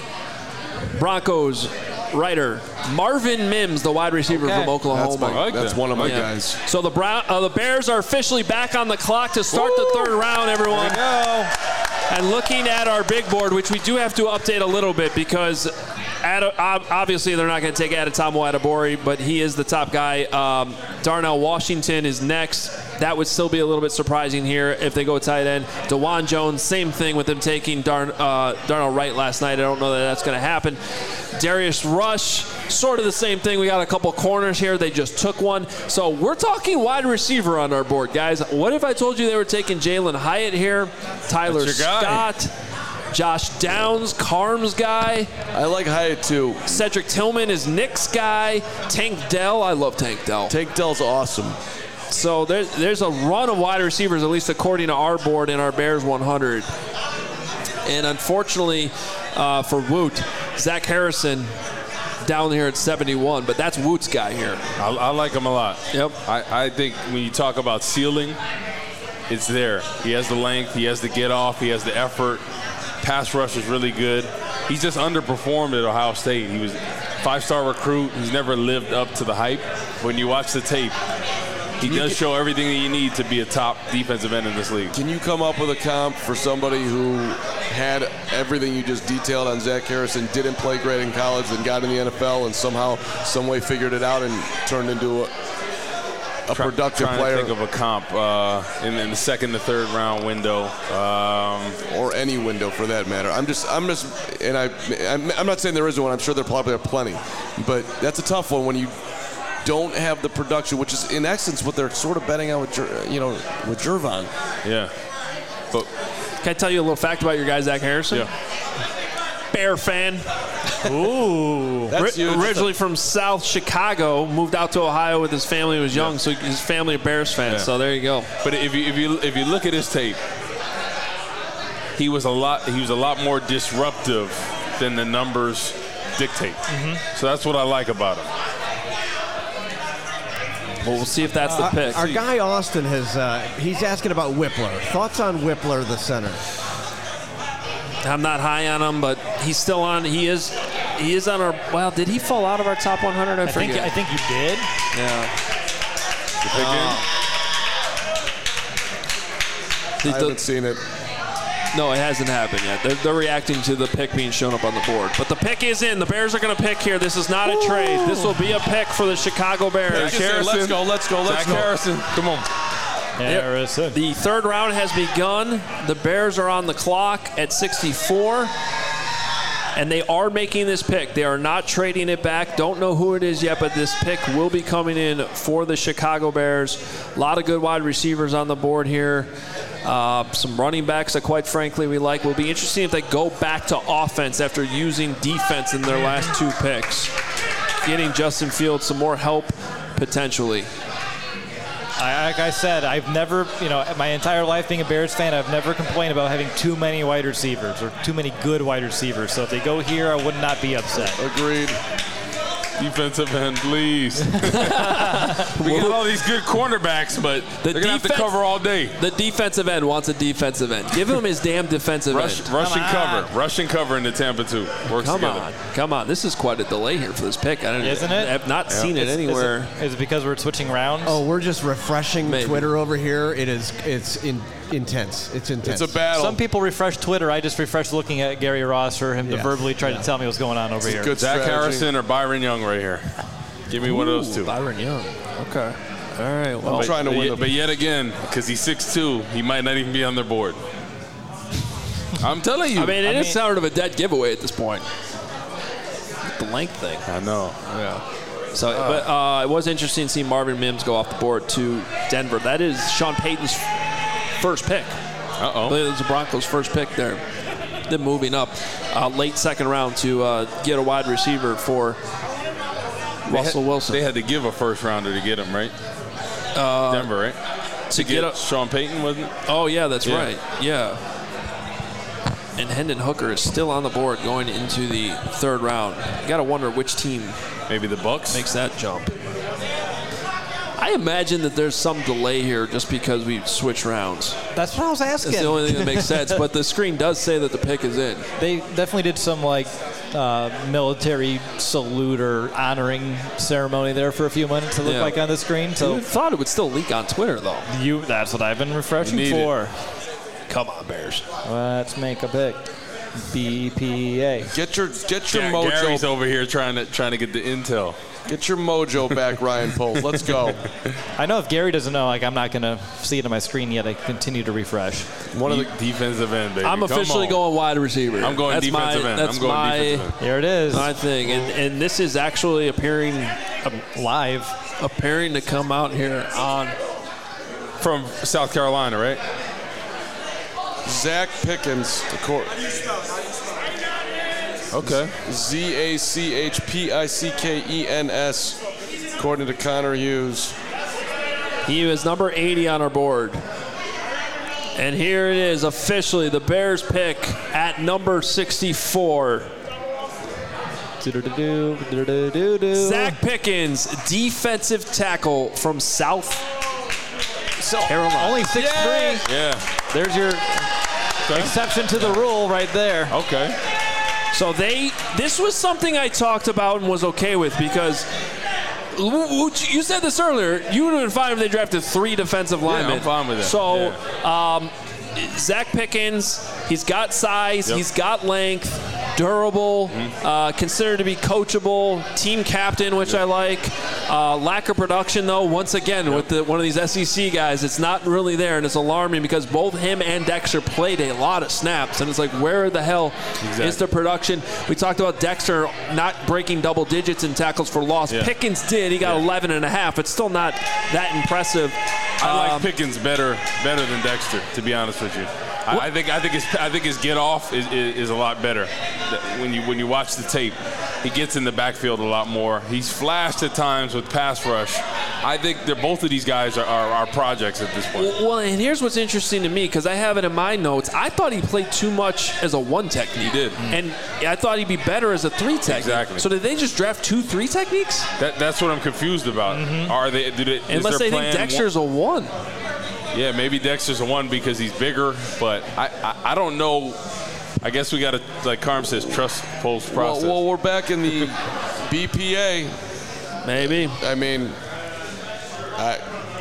Broncos writer Marvin Mims, the wide receiver okay. from Oklahoma. That's, my, like that's that. one of my yeah. guys. So the Brown, uh, the Bears are officially back on the clock to start Woo! the third round, everyone. Here we go. And looking at our big board, which we do have to update a little bit because Ad, obviously they're not going to take Adetomo Adebori, but he is the top guy. Um, Darnell Washington is next. That would still be a little bit surprising here if they go tight end. DeJuan Jones, same thing with them taking Darn, uh, Darnell Wright last night. I don't know that that's going to happen. Darius Rush, sort of the same thing. We got a couple corners here. They just took one. So we're talking wide receiver on our board, guys. What if I told you they were taking Jalen Hyatt here, Tyler Scott, Josh Downs, Carm's guy. I like Hyatt, too. Cedric Tillman is Nick's guy. Tank Dell. I love Tank Dell. Tank Dell's awesome. So there's, there's a run of wide receivers, at least according to our board in our Bears one hundred. And unfortunately uh, for Woot, Zach Harrison down here at seventy-one, but that's Woot's guy here. I, I like him a lot. Yep. I, I think when you talk about ceiling, it's there. He has the length, he has the get off, he has the effort. Pass rush is really good. He's just underperformed at Ohio State. He was a five-star recruit. He's never lived up to the hype. When you watch the tape, he does show everything that you need to be a top defensive end in this league. Can you come up with a comp for somebody who had everything you just detailed on Zach Harrison, didn't play great in college, then got in the N F L and somehow, some way figured it out and turned into a, a Try, productive trying player? to think of a comp uh, in, in the second to third round window. Um, or any window for that matter. I'm just, I'm just, and I, I'm, I'm not saying there isn't one. I'm sure there probably are plenty. But that's a tough one when you don't have the production, which is in essence what they're sort of betting on with, you know, with Jervon. Yeah. But can I tell you a little fact about your guy, Zach Harrison? Yeah. Bear fan. Ooh. That's Ri- originally from South Chicago, moved out to Ohio with his family when he was young, yeah. so his family are Bears fans. Yeah. So there you go. But if you if you if you look at his tape, he was a lot he was a lot more disruptive than the numbers dictate. Mm-hmm. So that's what I like about him. Well, we'll see if that's the uh, pick. Our guy Austin has, uh, he's asking about Whippler. Thoughts on Whippler, the center? I'm not high on him, but he's still on. He is He is on our. Well, did he fall out of our top one hundred? I, I think I think he did. Yeah. Uh, I haven't seen it. No, it hasn't happened yet. They're, they're reacting to the pick being shown up on the board. But the pick is in. The Bears are going to pick here. This is not a trade. This will be a pick for the Chicago Bears. Let's go, let's go, let's Zach go. Harrison, come on. Harrison. The third round has begun. The Bears are on the clock at sixty-four. And they are making this pick. They are not trading it back. Don't know who it is yet, but this pick will be coming in for the Chicago Bears. A lot of good wide receivers on the board here. Uh, some running backs that, quite frankly, we like. Will be interesting if they go back to offense after using defense in their last two picks. Getting Justin Fields some more help, potentially. I, like I said, I've never, you know, my entire life being a Bears fan, I've never complained about having too many wide receivers or too many good wide receivers. So if they go here, I would not be upset. Agreed. Defensive end, please. We got all these good cornerbacks, but The they're going to have to defense- cover all day. The defensive end wants a defensive end. Give him his damn defensive Rush, end. rush and Come cover. on. Rush and cover into Tampa, too. Works Come together. on, come on. This is quite a delay here for this pick. I don't, Isn't it? I've not seen it Is- is anywhere. Is it because we're switching rounds? Oh, we're just refreshing Maybe. Twitter over here. It is, it's in, intense. It's intense. It's a battle. Some people refresh Twitter. I just refresh looking at Gary Ross for him to Yeah. verbally try Yeah. to tell me what's going on over here. good Zach strategy. Harrison or Byron Young right here. Give me one of those two. Byron Young. Okay. All right. Well, I'm trying to but, win yet, the but yet again, because he's six two, he might not even be on their board. I'm telling you. I mean, it I is mean- sort of a dead giveaway at this point. The length thing. I know. Yeah. So, but uh, it was interesting to see Marvin Mims go off the board to Denver. That is Sean Payton's first pick. Uh-oh. It was the Broncos' first pick there. Then moving up uh, late second round to uh, get a wide receiver for They Russell had, Wilson. They had to give a first rounder to get him, right? Uh, Denver, right? to Get, get a, Sean Payton, wasn't it? Oh, yeah, that's Yeah. right. Yeah. And Hendon Hooker is still on the board going into the third round. You got to wonder which team Maybe the Bucks. makes that jump. I imagine that there's some delay here just because we switch rounds. That's what I was asking. That's the only thing that makes sense. But the screen does say that the pick is in. They definitely did some like uh, military salute or honoring ceremony there for a few minutes. It looked Yeah. like on the screen. I So thought it would still leak on Twitter, though. you—that's what I've been refreshing You need for. Come on, Bears. Let's make a pick. B P A. Get your get your Ga- mojo Gary's over here trying to trying to get the intel. get your mojo back, Ryan Poles. Let's go. I know if Gary doesn't know, like I'm not gonna see it on my screen yet. I continue to refresh. One of the defensive end, baby. I'm Come officially on. going wide receiver. I'm going that's defensive my, end. That's I'm going my, defensive end. Here it is. my thing. And, and this is actually appearing Live. appearing to come out here on. From South Carolina, right? Zach Pickens, the court. Okay. Z A C H P I C K E N S, according to Connor Hughes. He is number eighty on our board. And here it is officially the Bears pick at number sixty-four. Do-do-do-do, do-do-do-do. Zach Pickens, defensive tackle from South So, Carolina. only six three. Yeah. There's your exception to the rule right there. Okay. So they, this was something I talked about and was okay with because you said this earlier. You would have been fine if they drafted three defensive linemen. I'm fine with that. So um, Zach Pickens, he's got size, Yep. he's got length, durable, Mm-hmm. uh, considered to be coachable, team captain, which I like. Uh, lack of production, though, once again, with the, one of these S E C guys, it's not really there, and it's alarming because both him and Dexter played a lot of snaps, and it's like, where the hell Exactly. is the production? We talked about Dexter not breaking double digits in tackles for loss. Yeah. Pickens did. He got Yeah. eleven and a half. It's still not that impressive. I like Um, Pickens better better than Dexter, to be honest with you. I, I think I think his I think his get off is, is, is a lot better. That When you when you watch the tape, he gets in the backfield a lot more. He's flashed at times with pass rush. I think they're both of these guys are, are, are projects at this point. Well, and here's what's interesting to me because I have it in my notes. I thought he played too much as a one technique. He did. And I thought he'd be better as a three technique. Exactly. So did they just draft two three techniques? That, that's what I'm confused about. Are they? Do they is Unless their they think plan Dexter's a one. Yeah, maybe Dexter's a one because he's bigger, but I, I, I don't know. I guess we got to, like Carm says, trust Poles' process. Well, well, we're back in the B P A. Maybe. I mean, I,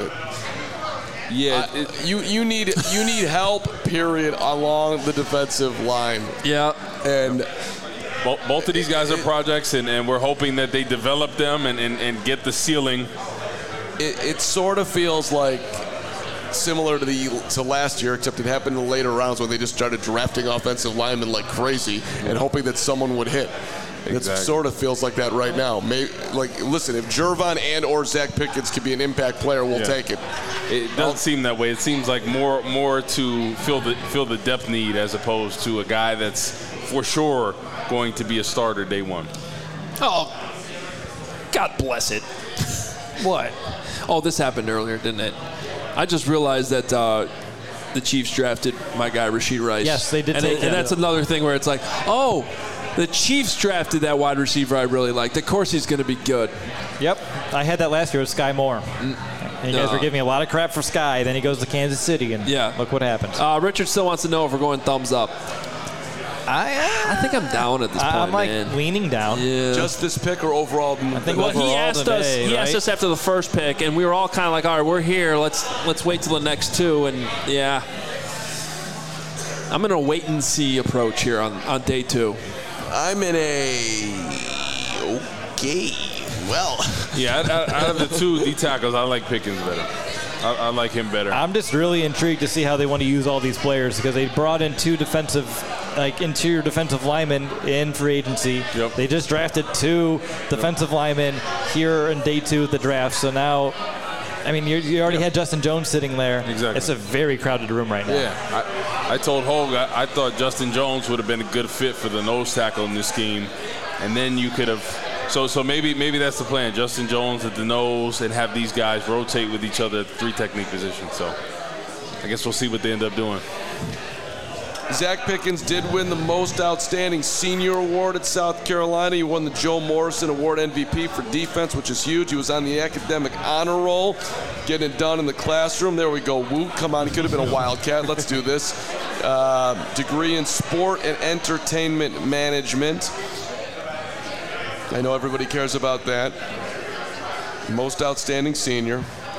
yeah, I, it, you you need you need help. Period. Along the defensive line. Yeah. And both, both of these guys are projects, and, and we're hoping that they develop them and, and, and get the ceiling. It, it sort of feels like similar to the to last year, except it happened in the later rounds when they just started drafting offensive linemen like crazy and hoping that someone would hit. Exactly. It sort of feels like that right now. Maybe, like, listen, if Gervon and or Zach Pickens could be an impact player, we'll yeah. take it. It doesn't I'll, seem that way. It seems like more more to fill the fill the depth need as opposed to a guy that's for sure going to be a starter day one. Oh, God bless it. What? Oh, this happened earlier, didn't it? I just realized that uh, the Chiefs drafted my guy Rashid Rice. Yes, they did. And, take it, and that's another thing where it's like, oh, the Chiefs drafted that wide receiver I really liked. Of course he's going to be good. Yep. I had that last year with Sky Moore. And you guys uh, were giving me a lot of crap for Sky. Then he goes to Kansas City, and yeah. look what happens. Uh, Richard still wants to know if we're going thumbs up. I, uh, I think I'm down at this point, I'm like man. leaning down. Yeah. Just this pick or overall? I think well, overall he asked today, us. He right? asked us after the first pick, and we were all kind of like, "All right, we're here. Let's let's wait till the next two." And yeah, I'm in a wait and see approach here on, on day two. I'm in a okay. Well, yeah. Out, out of the two D tackles, I like Pickens better. I, I like him better. I'm just really intrigued to see how they want to use all these players because they brought in two defensive, like interior defensive linemen in free agency. Yep. They just drafted two defensive linemen here in day two of the draft. So now, I mean, you, you already yep. had Justin Jones sitting there. Exactly. It's a very crowded room right now. Yeah. I, I told Hogue I, I thought Justin Jones would have been a good fit for the nose tackle in this scheme, and then you could have. So so maybe maybe that's the plan. Justin Jones at the nose and have these guys rotate with each other at the three technique position. So I guess we'll see what they end up doing. Zach Pickens did win the most outstanding senior award at South Carolina. He won the Joe Morrison Award M V P for defense, which is huge. He was on the academic honor roll, getting it done in the classroom. There we go. Woot, come on. He could have been a Wildcat. Let's do this. Uh, degree in sport and entertainment management. I know everybody cares about that. Most outstanding senior.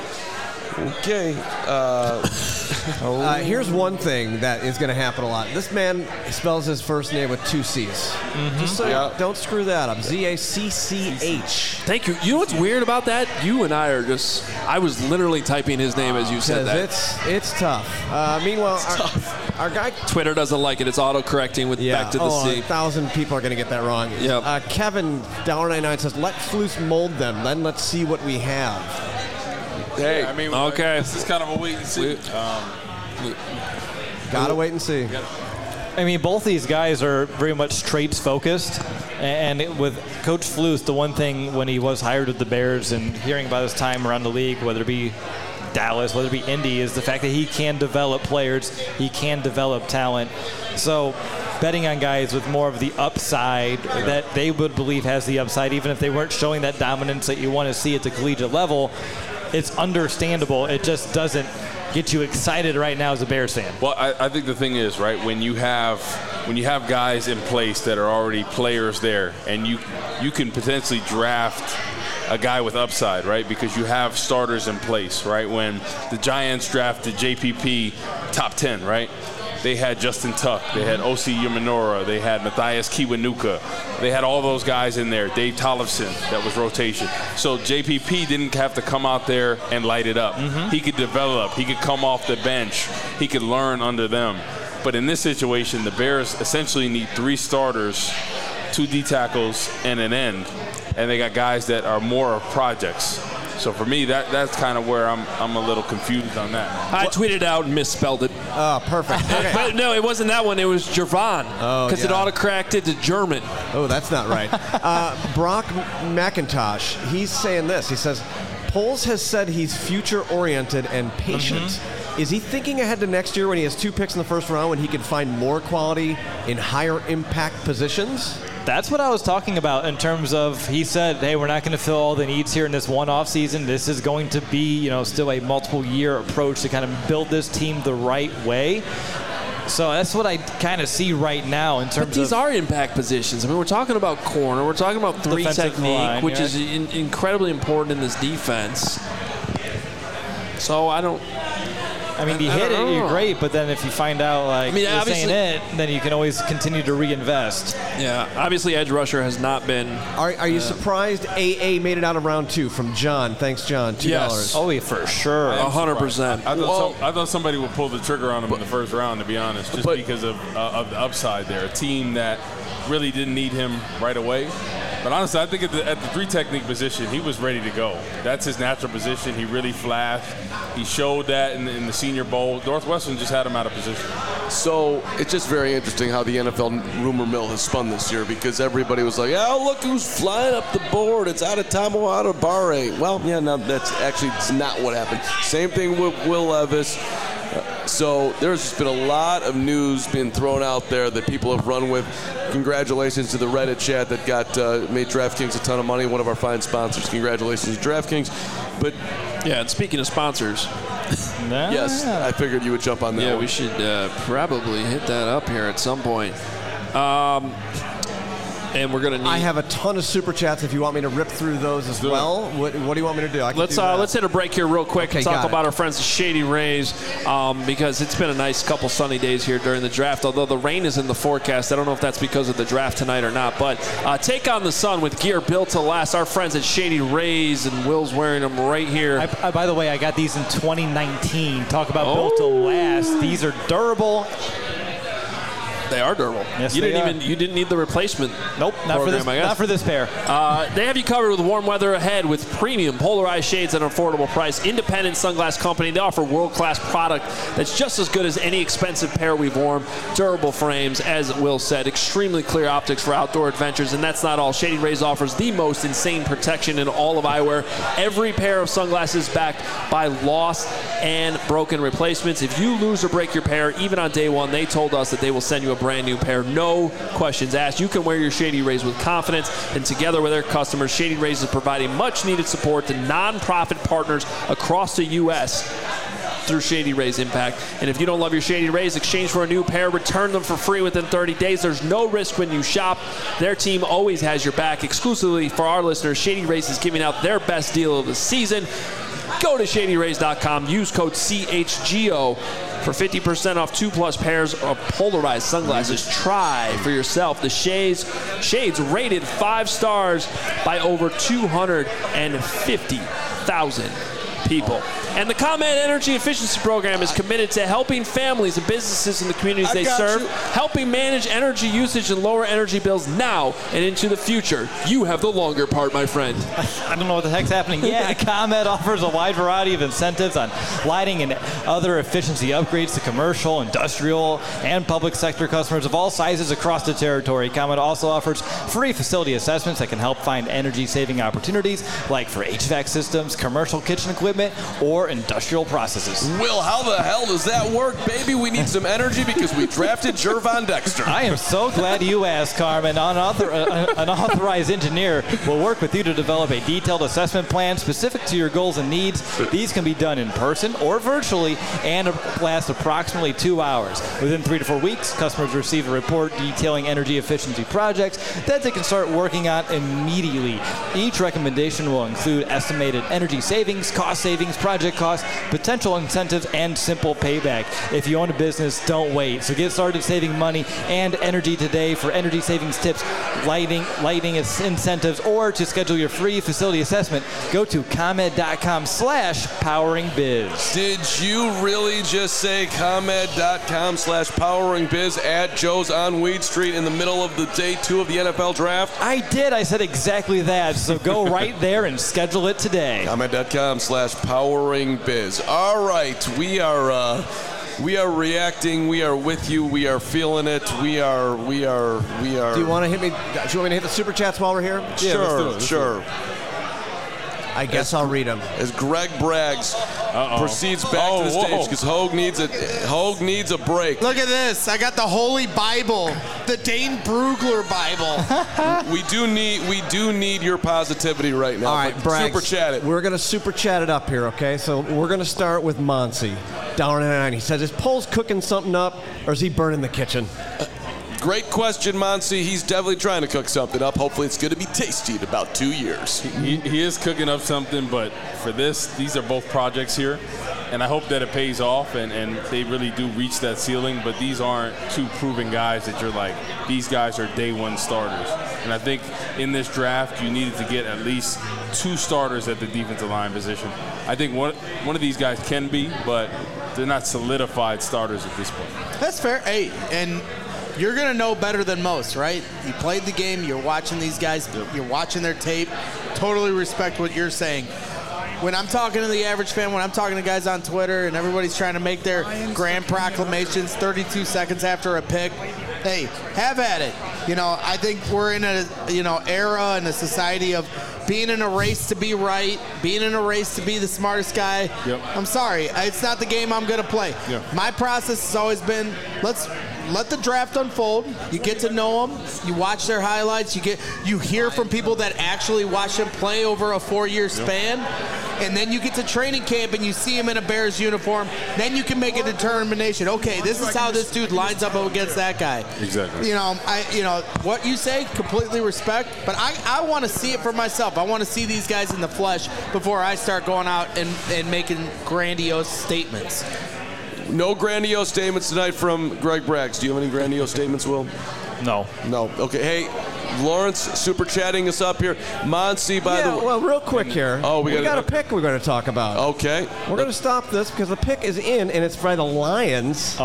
Okay. Uh, uh, here's one thing that is going to happen a lot. This man spells his first name with two C's. Mm-hmm. Just so yeah. you don't screw that up. Z A C C H. Thank you. You know what's weird about that? You and I are just, I was literally typing his name as you said that. It's, it's tough. Uh, meanwhile, it's our, tough. our guy... Twitter doesn't like it. It's auto-correcting with yeah. back to the oh, C. A thousand people are going to get that wrong. Yep. Uh, Kevin, one dollar ninety-nine says, let Flus mold them. Then let's see what we have. Hey, yeah, I mean, okay. This is kind of a wait and see. Um, Gotta wait and see. I mean, both these guys are very much traits focused, and it, with Coach Flus, the one thing when he was hired with the Bears and hearing about his time around the league, whether it be Dallas, whether it be Indy, is the fact that he can develop players, he can develop talent. So betting on guys with more of the upside that they would believe has the upside, even if they weren't showing that dominance that you want to see at the collegiate level, it's understandable. It just doesn't get you excited right now as a Bears fan. Well, I, I think the thing is, right, when you have when you have guys in place that are already players there, and you you can potentially draft a guy with upside, right, because you have starters in place, right? When the Giants drafted J P P top ten, right? They had Justin Tuck, they had O C Umenora, they had Matthias Kiwanuka, they had all those guys in there. Dave Tollefson, that was rotation. So J P P didn't have to come out there and light it up. Mm-hmm. He could develop, he could come off the bench, he could learn under them. But in this situation, the Bears essentially need three starters, two D tackles, and an end. And they got guys that are more of projects. So for me, that that's kind of where I'm I'm a little confused on that. I tweeted out and misspelled it. Oh, perfect. Okay. But no, it wasn't that one. It was Jervon. Oh, Because yeah. it auto-corrected to German. Oh, that's not right. uh, Brock McIntosh, he's saying this. He says, Poles has said he's future-oriented and patient. Mm-hmm. Is he thinking ahead to next year when he has two picks in the first round when he can find more quality in higher impact positions? That's what I was talking about in terms of, he said, hey, we're not going to fill all the needs here in this one off season. This is going to be, you know, still a multiple year approach to kind of build this team the right way. So that's what I kind of see right now in terms of. But these of are impact positions. I mean, we're talking about corner. We're talking about three technique, line, which yeah. is in, incredibly important in this defense. So I don't. I mean, you hit it, you're great, but then if you find out, like, I mean, this ain't obviously- it, then you can always continue to reinvest. Yeah, obviously, edge rusher has not been. Are, are you uh, surprised A A made it out of round two from John? Thanks, John. two dollars. Yes. Oh, yeah, for sure. A hundred percent. I thought, Well, some, I thought somebody would pull the trigger on him in the first round, to be honest, just but- because of, uh, of the upside there. A team that really didn't need him right away. But honestly, I think at the, at the three technique position, he was ready to go. That's his natural position. He really flashed. He showed that in, in the Senior Bowl. Northwestern just had him out of position. So it's just very interesting how the N F L rumor mill has spun this year, because everybody was like, oh, look who's flying up the board. It's out of Tomo, out of Barre. Well, yeah, no, that's actually it's not what happened. Same thing with Will Levis. Uh, so there's just been a lot of news being thrown out there that people have run with. Congratulations to the Reddit chat that got uh, made DraftKings a ton of money, one of our fine sponsors. Congratulations to DraftKings. But yeah, and speaking of sponsors, Nah. yes, I figured you would jump on that yeah, one. we should uh, probably hit that up here at some point. Um, and we're gonna need. I have a ton of super chats if you want me to rip through those as well. What, what do you want me to do? I can Let's do uh, that. let's hit a break here real quick Okay, and talk got about it. our friends at Shady Rays, um, because it's been a nice couple sunny days here during the draft, although the rain is in the forecast. I don't know if that's because of the draft tonight or not, but uh, take on the sun with gear built to last. Our friends at Shady Rays, and Will's wearing them right here. I, I, by the way, I got these in twenty nineteen. Talk about Oh. built to last. These are durable. They are durable. Yes, you they didn't are. even you didn't need the replacement. Nope, not for program, this. I guess. Not for this pair. Uh, they have you covered with warm weather ahead with premium polarized shades at an affordable price. Independent sunglass company. They offer world-class product that's just as good as any expensive pair we've worn. Durable frames, as Will said. Extremely clear optics for outdoor adventures. And that's not all. Shady Rays offers the most insane protection in all of eyewear. Every pair of sunglasses backed by lost and broken replacements. If you lose or break your pair, even on day one, they told us that they will send you a brand new pair. No questions asked. You can wear your Shady Rays with confidence, and together with their customers, Shady Rays is providing much needed support to nonprofit partners across the U S through Shady Rays Impact. And if you don't love your Shady Rays, exchange for a new pair, return them for free within thirty days. There's no risk when you shop. Their team always has your back. Exclusively for our listeners, Shady Rays is giving out their best deal of the season. Go to shady rays dot com, use code C H G O for fifty percent off two plus pairs of polarized sunglasses. Try for yourself the shades, shades rated five stars by over two hundred fifty thousand people. And the ComEd Energy Efficiency Program is committed to helping families and businesses in the communities I they got serve, you. helping manage energy usage and lower energy bills now and into the future. You have the longer part, my friend. I don't know what the heck's happening. Yeah, ComEd offers a wide variety of incentives on lighting and other efficiency upgrades to commercial, industrial, and public sector customers of all sizes across the territory. ComEd also offers free facility assessments that can help find energy-saving opportunities, like for H V A C systems, commercial kitchen equipment, or industrial processes. Will, how the hell does that work, baby? We need some energy because we drafted Jervon Dexter. I am so glad you asked, Carmen. Unauthor- uh, an authorized engineer will work with you to develop a detailed assessment plan specific to your goals and needs. These can be done in person or virtually and last approximately two hours. Within three to four weeks, customers receive a report detailing energy efficiency projects that they can start working on immediately. Each recommendation will include estimated energy savings, cost savings, project costs, potential incentives, and simple payback. If you own a business, don't wait. So get started saving money and energy today. For energy savings tips, lighting, lighting incentives, or to schedule your free facility assessment, go to ComEd.com slash powering biz. Did you really just say ComEd.com slash powering biz at Joe's on Weed Street in the middle of the day two of the N F L draft? I did. I said exactly that. So go right there and schedule it today. ComEd.com slash powering biz. All right, we are uh, we are reacting. We are with you. We are feeling it. We are we are we are. Do you want to hit me? Do you want me to hit the super chats while we're here? Sure, sure. I guess as, I'll read them. As Greg Braggs Uh-oh. proceeds back Oh, to the stage whoa. because Hogue needs a Hogue needs a break. Look at this. I got the Holy Bible, the Dane Brugler Bible. we do need we do need your positivity right now. All right, Braggs, super chat it. We're going to super chat it up here, okay? So we're going to start with Monsi, down in nine. He says, is Poles cooking something up, or is he burning the kitchen? Uh, Great question, Monsi. He's definitely trying to cook something up. Hopefully it's going to be tasty in about two years. He, he is cooking up something, but for this, these are both projects here, and I hope that it pays off and, and they really do reach that ceiling, but these aren't two proven guys that you're like, these guys are day one starters. And I think in this draft, you needed to get at least two starters at the defensive line position. I think one, one of these guys can be, but they're not solidified starters at this point. That's fair. Hey, and you're going to know better than most, right? You played the game. You're watching these guys. You're watching their tape. Totally respect what you're saying. When I'm talking to the average fan, when I'm talking to guys on Twitter and everybody's trying to make their grand proclamations thirty-two seconds after a pick, hey, have at it. You know, I think we're in a, you know, era and a society of being in a race to be right, being in a race to be the smartest guy. Yep. I'm sorry. It's not the game I'm going to play. Yeah. My process has always been, let's let the draft unfold. You get to know them. You watch their highlights. You get you hear from people that actually watch them play over a four-year span. Yep. And then you get to training camp and you see him in a Bears uniform. Then you can make a determination. Okay, this is how this dude lines up against that guy. Exactly. You know, I you know what you say, completely respect. But I, I want to see it for myself. I want to see these guys in the flesh before I start going out and, and making grandiose statements. No grandiose statements tonight from Greg Braggs. Do you have any grandiose statements, Will? No. No. Okay. Hey, Lawrence, super chatting us up here. Monsi, by yeah, the way. well, real quick here. Oh, we, we got a pick we're going to talk about. Okay. We're going to stop this because the pick is in, and it's by the Lions.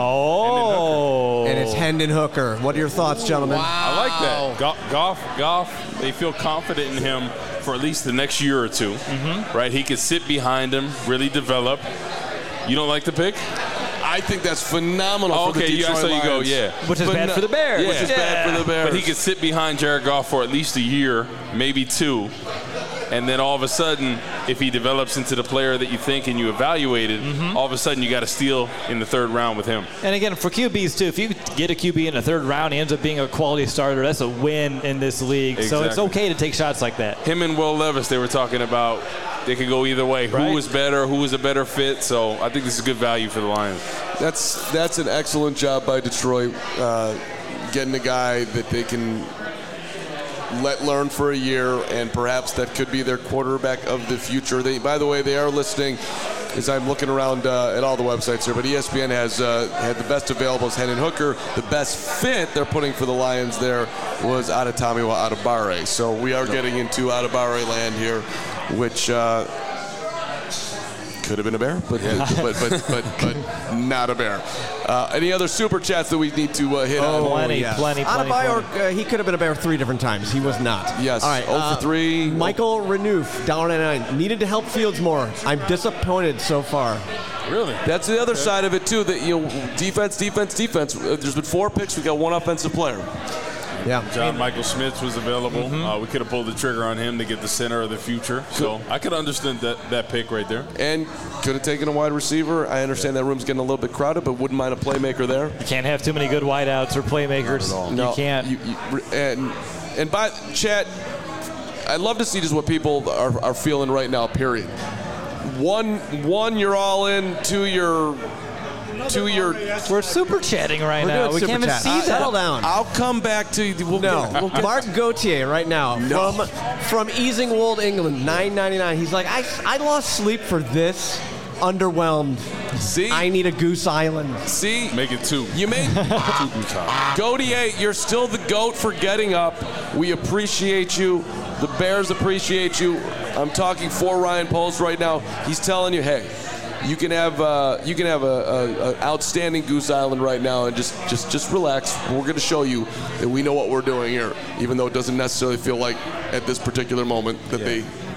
Oh. And it's Hendon Hooker. What are your thoughts, gentlemen? Wow. I like that. Go- Goff, Goff, they feel confident in him for at least the next year or two, mm-hmm. right? He could sit behind him, really develop. You don't like the pick? I think that's phenomenal oh, for the okay, Detroit yeah, so you go, Lions. yeah. Which is But bad no- for the Bears. Yeah. Which is yeah. bad for the Bears. But he could sit behind Jared Goff for at least a year, maybe two, and then all of a sudden, if he develops into the player that you think and you evaluated, mm-hmm. all of a sudden you got to steal in the third round with him. And again, for Q Bs too, if you get a Q B in the third round, he ends up being a quality starter. That's a win in this league. Exactly. So it's okay to take shots like that. Him and Will Levis, they were talking about they could go either way. Right. Who was better? Who was a better fit? So I think this is good value for the Lions. That's that's an excellent job by Detroit, uh, getting a guy that they can let learn for a year, and perhaps that could be their quarterback of the future. They, by the way, they are listening, as I'm looking around uh, at all the websites here, but E S P N has uh, had the best available as Hendon Hooker. The best fit they're putting for the Lions there was Adetomiwa Adebawore. So we are getting into Adebawore land here, which uh, could have been a bear, but but, but, but, but not a bear. Uh, any other super chats that we need to uh, hit Oh, on? Plenty, yes. plenty, plenty, Adebayor, plenty. Uh, he could have been a bear three different times. He was not. Yes. All right. oh for three. Michael Renouf, down at nine. Needed to help Fields more. I'm disappointed so far. Really? That's the other side of it too. That you know, defense, defense, defense. Uh, There's been four picks. We got one offensive player. Yeah. John Michael Schmitz was available. Mm-hmm. Uh, we could have pulled the trigger on him to get the center of the future. So I could understand that, that pick right there. And could have taken a wide receiver. I understand that room's getting a little bit crowded, but wouldn't mind a playmaker there. You can't have too many good wideouts or playmakers. No, You can't. You, you, and and by chat, I'd love to see just what people are, are feeling right now. Period. One, one, you're all in. Two, you're. To your, We're super chatting right We're now. doing We super can't even chat. see Uh, that. Settle down. I'll come back to you. We'll No, get- we'll get- Mark Gauthier right now No. from from Easingwold, England, nine ninety-nine. He's like, I I lost sleep for this. Underwhelmed. See, I need a Goose Island. see, Make it two. you made two boots on. Gautier, you're still the GOAT for getting up. We appreciate you. The Bears appreciate you. I'm talking for Ryan Poles right now. He's telling you, hey, you can have uh, you can have a, a, a outstanding Goose Island right now, and just just just relax. We're going to show you that we know what we're doing here, even though it doesn't necessarily feel like at this particular moment that Yeah. they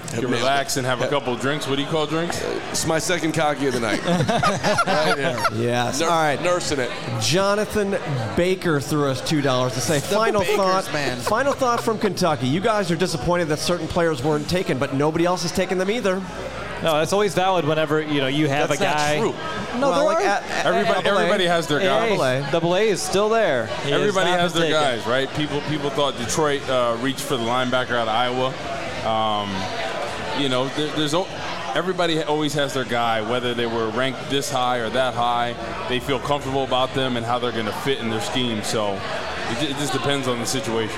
You can relax and have a couple of drinks. What do you call drinks? It's my second cocky of the night. Right here. Yes. Nur- All right. Nursing it. Jonathan Baker threw us two dollars to say, final Bakers, thought, man. final thought from Kentucky. You guys are disappointed that certain players weren't taken, but nobody else has taken them either. No, that's always valid whenever, you know, you have That's a guy. not true. No, well, there like are. at- at- Everybody, at double A. everybody has their guys. Double A. Double A is still there. He Everybody not has their been taken. guys, right? People people thought Detroit uh, reached for the linebacker out of Iowa. Um, you know, there, there's o- everybody always has their guy, whether they were ranked this high or that high. They feel comfortable about them and how they're going to fit in their scheme. So it, ju- it just depends on the situation.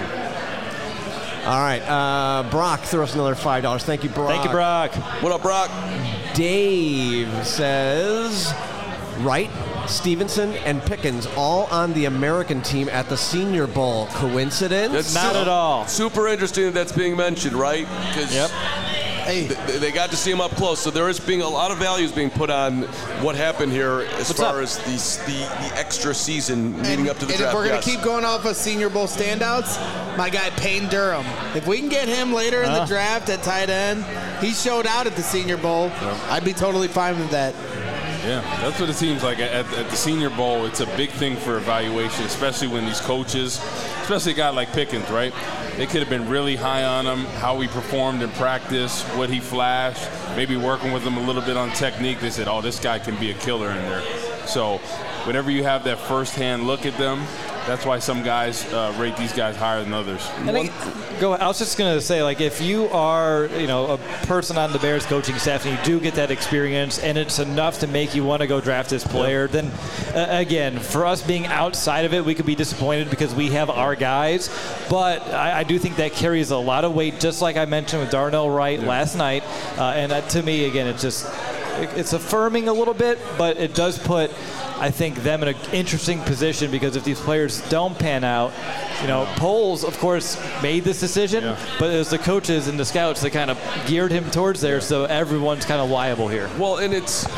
All right. Uh, Brock threw us another five dollars. Thank you, Brock. Thank you, Brock. What up, Brock? Dave says, Wright, Stevenson, and Pickens all on the American team at the Senior Bowl. Coincidence? That's Not su- at all. Super interesting that that's being mentioned, right? 'Cause Yep. Hey, th- they got to see him up close, so there is being a lot of values being put on what happened here as What's far up? as the, the the extra season leading up to the and draft. if we're going yes. to keep going off of Senior Bowl standouts, my guy Payne Durham. If we can get him later in the Uh. draft at tight end, he showed out at the Senior Bowl. I'd be totally fine with that. Yeah, that's what it seems like at, at the Senior Bowl. It's a big thing for evaluation, especially when these coaches, especially a guy like Pickens, right? They could have been really high on him, how he performed in practice, what he flashed, maybe working with him a little bit on technique. They said, oh, this guy can be a killer in there. So whenever you have that firsthand look at them, that's why some guys uh, rate these guys higher than others. I think, go. I was just going to say, like, if you are, you know, a person on the Bears coaching staff and you do get that experience and it's enough to make you want to go draft this player, then uh, again, for us being outside of it, we could be disappointed because we have our guys. But I, I do think that carries a lot of weight, just like I mentioned with Darnell Wright Yeah. last night. Uh, and that, to me, again, it's just it, it's affirming a little bit, but it does put, I think, them in an interesting position because if these players don't pan out, you know, Poles, of course, made this decision, Yeah. but it was the coaches and the scouts that kind of geared him towards there, so everyone's kind of liable here. Well, and it's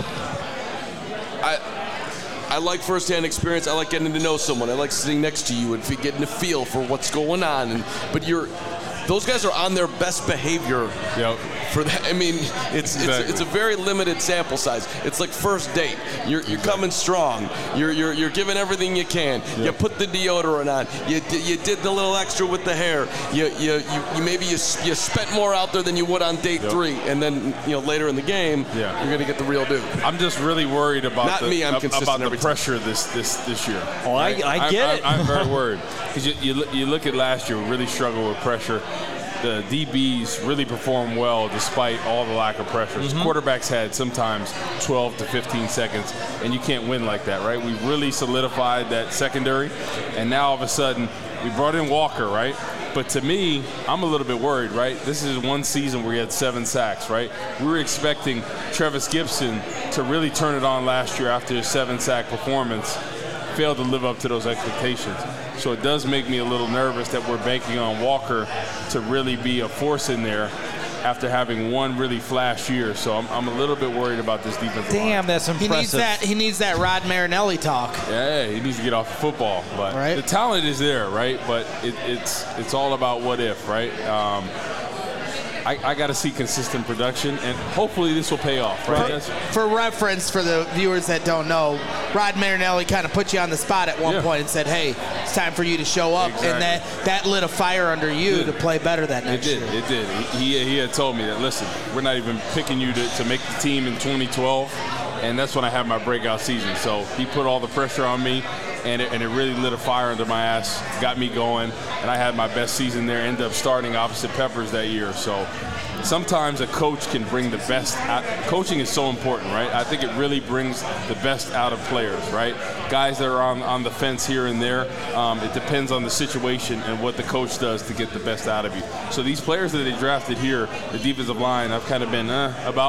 I I like firsthand experience. I like getting to know someone. I like sitting next to you and fe- getting a feel for what's going on. And but you're those guys are on their best behavior. Yep. For that, I mean, it's Exactly. it's it's a very limited sample size. It's like first date. You're you're coming strong. You're you're you're giving everything you can. You put the deodorant on. You di- you did the little extra with the hair. You you you, you maybe you s- you spent more out there than you would on date Yep. three. And then you know later in the game, Yeah. you're gonna get the real dude. I'm just really worried about Not the, me, I'm ab- consistent about the every time. pressure this this this year. Oh, I- I get I'm, it. I'm, I'm very worried because you, you look- you look at last year, we really struggled with pressure. The D Bs really performed well despite all the lack of pressures. Mm-hmm. Quarterbacks had sometimes twelve to fifteen seconds, and you can't win like that, right? We really solidified that secondary, and now all of a sudden we brought in Walker, right? But to me, I'm a little bit worried, right? This is one season where he had seven sacks, right? We were expecting Travis Gibson to really turn it on last year after his seven-sack performance. Failed to live up to those expectations. So it does make me a little nervous that we're banking on Walker to really be a force in there after having one really flash year. So I'm, I'm a little bit worried about this defensive line. Damn, that's He impressive. needs that. He needs that Rod Marinelli talk. Yeah, he needs to get off the football. But Right. the talent is there, right? But it, it's it's all about what if, right? Um, I, I got to see consistent production, and hopefully this will pay off, right? That's- For reference, for the viewers that don't know, Rod Marinelli kind of put you on the spot at one Yeah. point and said, "Hey, it's time for you to show up," Exactly. and that that lit a fire under you It to did. play better that It next did. year. It did. He, he had told me that, listen, we're not even picking you to, to make the team in twenty twelve, and that's when I had my breakout season. So he put all the pressure on me, and it, and it really lit a fire under my ass, got me going, and I had my best season there, ended up starting opposite Peppers that year. So sometimes a coach can bring the best out. Coaching is so important, right? I think it really brings the best out of players, right? Guys that are on, on the fence here and there, um, it depends on the situation and what the coach does to get the best out of you. So these players that they drafted here, the defensive line, I've kind of been uh, about.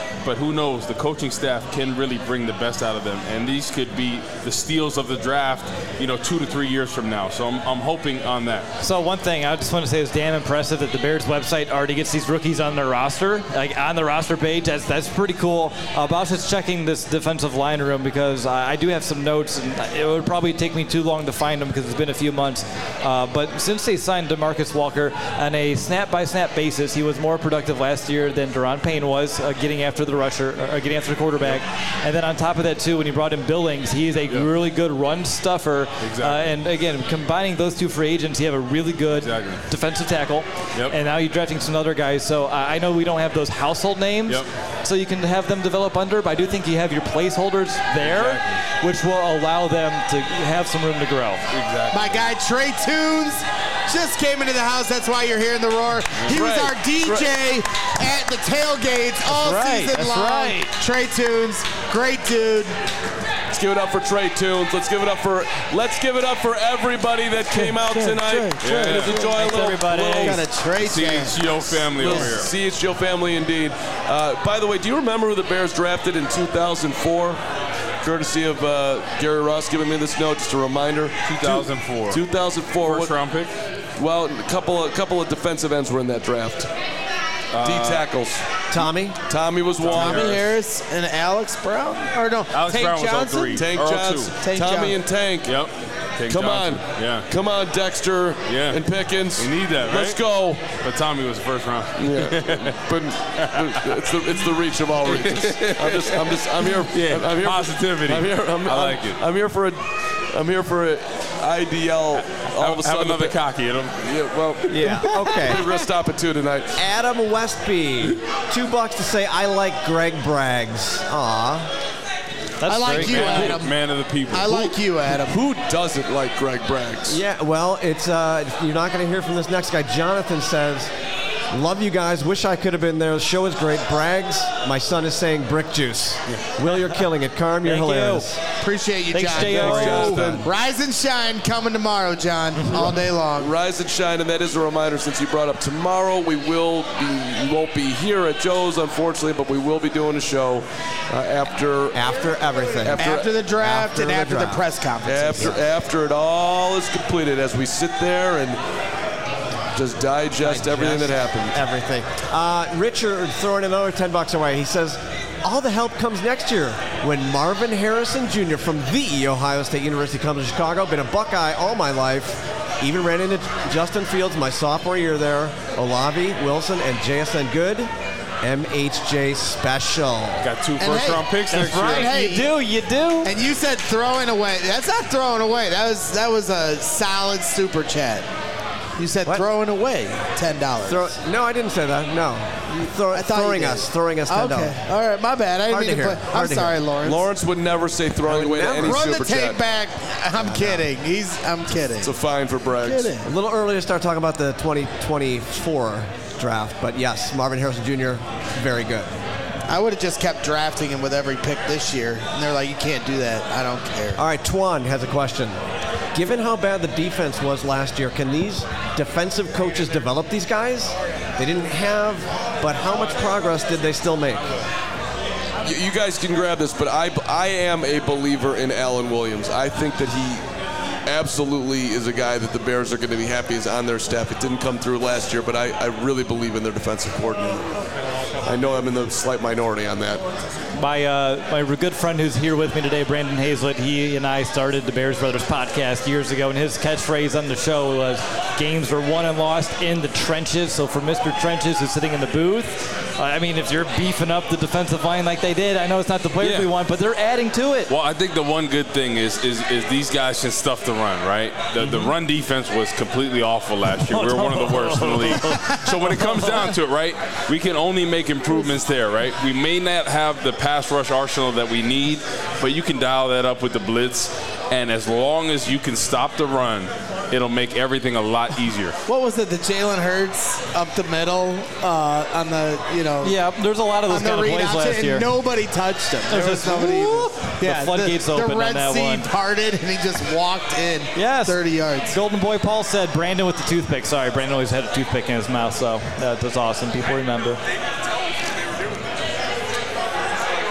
but who knows? The coaching staff can really bring the best out of them, and these could be the steals of the draft, you know, two to three years from now. So I'm, I'm hoping on that. So one thing I just want to say is damn impressive that the Bears website already gets these rookies on their roster, like on the roster page. That's that's pretty cool. Uh, but I was just checking this defensive line room because I, I do have some notes, and it would probably take me too long to find them because it's been a few months. Uh, but since they signed DeMarcus Walker on a snap-by-snap basis, he was more productive last year than Daron Payne was, uh, getting after the rusher, uh, getting after the quarterback. Yep. And then on top of that, too, when he brought in Billings, he is a yep. really good run stuffer. Exactly. Uh, and again, combining those two free agents, you have a really good exactly. defensive tackle. Yep. And now you're drafting some other guys. So uh, I know we don't have those household names, yep. so you can have them develop under, but I do think you have your placeholders there, exactly. which will allow them to have some room to grow. Exactly. My guy Trey Tunes just came into the house. That's why you're hearing the roar. That's he was right. our D J right. at the tailgates all That's right. season That's long. Right. Trey Tunes, great dude. Let's give it up for Trey Tunes. Let's give it up for let's give it up for everybody that came out Trey, tonight. Trey, Trey, and yeah. enjoy a little, everybody. little Got a Trey C H G O family over here. C H G O family indeed. Uh, by the way, do you remember who the Bears drafted in two thousand four? Courtesy of uh, Gary Ross giving me this note, just a reminder. two thousand four. two thousand four. First what, round pick? Well, a couple of, couple of defensive ends were in that draft. Uh, D tackles. Tommy. Tommy was one. Tommy Harris and Alex Brown? Or no, Alex Tank Brown was Johnson? oh three. Tank Or oh two. Johnson. Tank Tommy Johnson. and Tank. Yep. Tank Come Johnson. on. Yeah. Come on, Dexter Yeah. and Pickens. We need that, right? Let's go. But Tommy was the first round. Yeah. But it's the it's the reach of all reaches. I'm just I'm just I'm here. Yeah. I'm, I'm here Positivity. For, I'm here. I'm, I like I'm, it. I'm here for a. I'm here for a I D L. All of a sudden, have another the, cocky in him. Yeah. Well. Yeah. Okay. We're gonna stop at two tonight. Adam Westby, two bucks to say I like Greg Braggs. Aw. That's I like great, you, man. Adam. Man of the people. I like you, Adam. Who doesn't like Greg Braggs? Yeah. Well, it's uh, you're not going to hear from this next guy. Jonathan says, "Love you guys. Wish I could have been there. The show is great. Braggs. My son is saying brick juice. Yeah. Will, you're killing it. Carm, you're Thank you. hilarious. Appreciate you, Thanks, John. J O. Thanks, Jonathan. Rise and shine coming tomorrow, John, all day long. Rise and shine, and that is a reminder. Since you brought up tomorrow, we will be we won't be here at Joe's, unfortunately, but we will be doing a show uh, after After everything. After- After the draft after and the after the draft. press conference. after after it all is completed, as we sit there and just digest, everything that happened. Everything. Uh, Richard throwing another ten bucks away. He says, all the help comes next year when Marvin Harrison Junior from the Ohio State University comes to Chicago. Been a Buckeye all my life. Even ran into Justin Fields my sophomore year there. Olave, Wilson, and J S N Good. M H J special. Got two And first hey, round picks That's next right. year. Hey, you do. You do. And you said throwing away. That's not throwing away. That was that was a solid super chat. You said What? throwing away ten dollars. Throw, no, I didn't say that. No. Throw, I thought you throwing did. us. Throwing us ten dollars. Okay. All right. My bad. I didn't Hard mean to to hear. play. Hard I'm to sorry, hear. Lawrence. Lawrence would never say throwing away to never. any Run super the tape chat. back. I'm kidding. He's. I'm kidding. It's a fine for Braggs. Kidding. A little early to start talking about the twenty twenty-four draft, but yes, Marvin Harrison Junior, very good. I would have just kept drafting him with every pick this year, and they're like, "You can't do that." I don't care. All right, Twan has a question. Given how bad the defense was last year, can these defensive coaches develop these guys? They didn't have, but how much progress did they still make? You, you guys can grab this, but I, I am a believer in Alan Williams. I think that he absolutely is a guy that the Bears are going to be happy is on their staff. It didn't come through last year, but I, I really believe in their defensive coordinator. I know I'm in the slight minority on that. My uh, my good friend who's here with me today, Brandon Hazlett, he and I started the Bears Brothers podcast years ago, and his catchphrase on the show was, games are won and lost in the trenches. So for Mister Trenches, who's sitting in the booth, uh, I mean, if you're beefing up the defensive line like they did, I know it's not the players Yeah. we want, but they're adding to it. Well, I think the one good thing is is, is these guys can stuff the run, right? The, the run defense was completely awful last year. We were one of the worst in the league. So when it comes down to it, right, we can only make improvements there, right? We may not have the pass rush arsenal that we need, but you can dial that up with the blitz. And as long as you can stop the run, it'll make everything a lot easier. What was it? The Jalen Hurts up the middle uh, on the, you know. Yeah, there's a lot of those on the kind of read plays option, last and year. nobody touched him. There There's was just, nobody. whoop, Yeah, the floodgates the, opened the Red on that Sea one. parted, and he just walked in. Yes. thirty yards. Golden Boy Paul said Brandon with the toothpick. Sorry, Brandon always had a toothpick in his mouth, so that, that's awesome. People remember.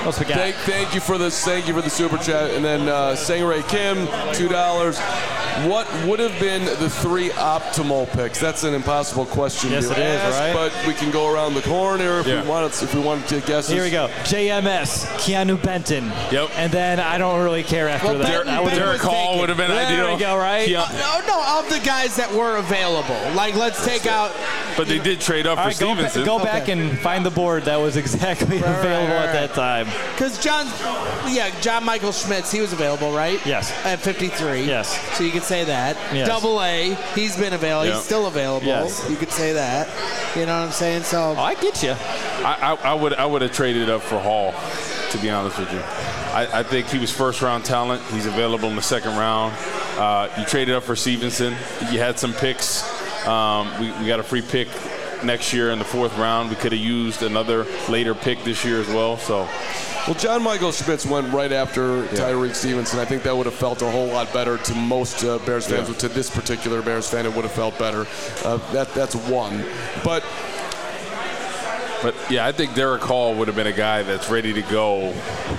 else we got? Thank, thank you for this. Thank you for the super chat. And then uh, Sangray Kim, two dollars. What would have been the three optimal picks? That's an impossible question yes, to it ask, is, right? But we can go around the horn here if yeah. we want. If we want to guess. Here we go. J M S, Keanu Benton. Yep. And then I don't really care after well, that. Benton, Derek, Derek Hall would have been there ideal. There we go, right? Uh, no, no, of the guys that were available. Like, let's take out. But they did trade up All for right, go, Stevenson. go Okay. back and find the board that was exactly Right, available right, right, at that time. Because John, yeah, John Michael Schmitz, he was available, right? Yes. At fifty-three. Yes. So you could say that. Yes. Double A, he's been available. Yep. He's still available. Yes. You could say that. You know what I'm saying? So. Oh, I get you. I, I, I would I would have traded up for Hall, to be honest with you. I, I think he was first round talent. He's available in the second round. Uh, you traded up for Stevenson. You had some picks. Um, we, we got a free pick next year in the fourth round. We could have used another later pick this year as well. So. Well, John Michael Schmitz went right after yeah. Tyreek Stevenson. I think that would have felt a whole lot better to most uh, Bears fans. Yeah. To this particular Bears fan, it would have felt better. Uh, that that's one. But But yeah, I think Derek Hall would have been a guy that's ready to go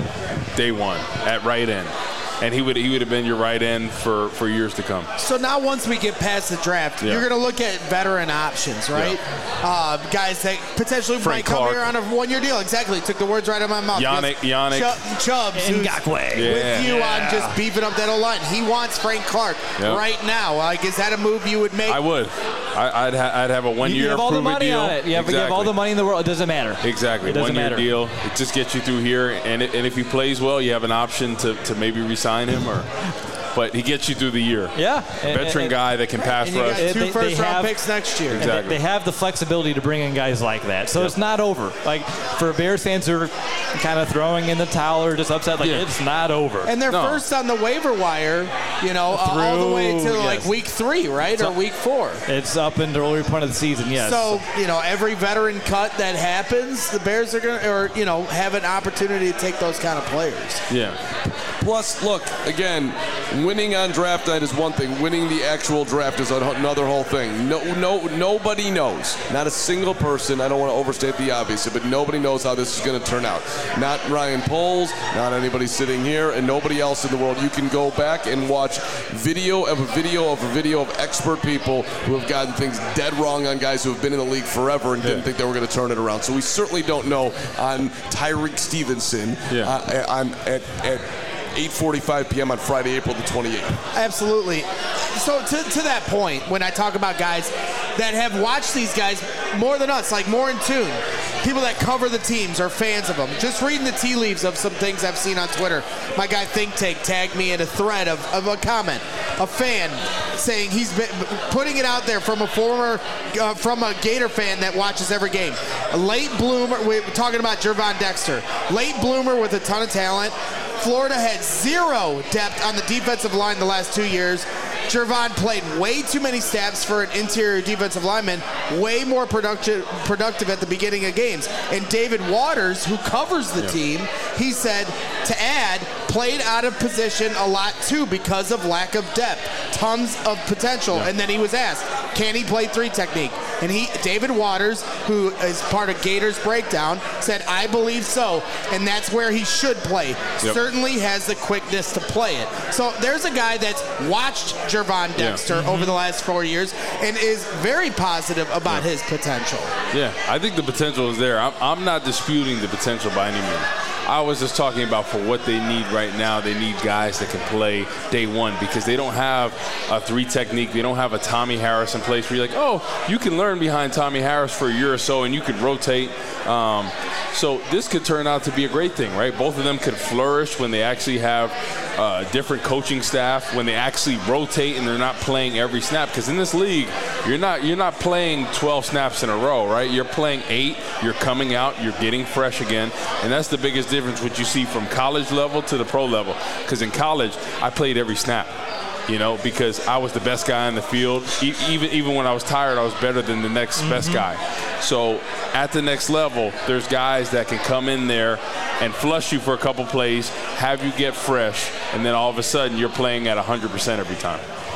day one at right end. And he would he would have been your right end for, for years to come. So now once we get past the draft, Yeah. you're going to look at veteran options, right? Yeah. Uh, guys that potentially Frank might come Clark. here on a one-year deal. Exactly. Took the words right out of my mouth. Yannick, Yannick. Ch- Chubbs, who's Ngakoue. Yeah. with you Yeah. on just beefing up that O-line. He wants Frank Clark Yep. right now. Like, is that a move you would make? I would. I, I'd, ha- I'd have a You one-year have all the prove-it money deal. on it. You have, exactly. you have all the money in the world. It doesn't matter. Exactly. It doesn't One-year matter. deal. It just gets you through here. And it, and if he plays well, you have an option to, to maybe re-sign him. or. But he gets you through the year. Yeah. A veteran and, guy that can pass and you got rush. They- two they first-round have- picks next year. And Exactly. they, they have the flexibility to bring in guys like that. So Yep. it's not over. Like, for Bears fans who are kind of throwing in the towel or just upset, like, Yeah. it's not over. And they're No. first on the waiver wire, you know, uh, all the way to Through- like yes. week three, right? So- or week four. It's up into the early part of the season, yes. So, you know, every veteran cut that happens, the Bears are going to, or, you know, have an opportunity to take those kind of players. Yeah. plus, look, again, winning on draft night is one thing. Winning the actual draft is another whole thing. No, no, nobody knows. Not a single person. I don't want to overstate the obvious, but nobody knows how this is going to turn out. Not Ryan Poles, not anybody sitting here, and nobody else in the world. You can go back and watch video of a video of a video of expert people who have gotten things dead wrong on guys who have been in the league forever and didn't Yeah. think they were going to turn it around. So we certainly don't know on Tyreek Stevenson Yeah. uh, on at, at eight forty-five p.m. on Friday, April the twenty-eighth. Absolutely. So to, to that point, when I talk about guys that have watched these guys more than us, like more in tune, people that cover the teams are fans of them. Just reading the tea leaves of some things I've seen on Twitter. My guy Think Tank tagged me in a thread of, of a comment, a fan saying he's been putting it out there from a former, uh, from a Gator fan that watches every game. A late bloomer, we're talking about Gervon Dexter, late bloomer with a ton of talent. Florida had zero depth on the defensive line the last two years. Gervon played way too many snaps for an interior defensive lineman, way more productive productive at the beginning of games. And David Waters, who covers the Yeah. team, he said, to add, played out of position a lot too because of lack of depth. Tons of potential. Yeah. And then he was asked, can he play three technique? And he, David Waters, who is part of Gators Breakdown, said, I believe so. And that's where he should play. Yep. Certainly has the quickness to play it. So there's a guy that's watched Gervon Dexter Yeah. over the last four years and is very positive about Yeah. his potential. Yeah, I think the potential is there. I'm, I'm not disputing the potential by any means. I was just talking about for what they need right now, they need guys that can play day one because they don't have a three technique. They don't have a Tommy Harris in place where you're like, oh, you can learn behind Tommy Harris for a year or so and you could rotate. Um, so this could turn out to be a great thing, right? Both of them could flourish when they actually have uh, different coaching staff, when they actually rotate and they're not playing every snap. Because in this league, you're not you're not playing twelve snaps in a row, right? You're playing eight. You're coming out. You're getting fresh again, and that's the biggest difference what you see from college level to the pro level. Because in college, I played every snap. You know, because I was the best guy on the field. E- even even when I was tired, I was better than the next mm-hmm. best guy. So at the next level, there's guys that can come in there and flush you for a couple plays, have you get fresh, and then all of a sudden you're playing at one hundred percent every time.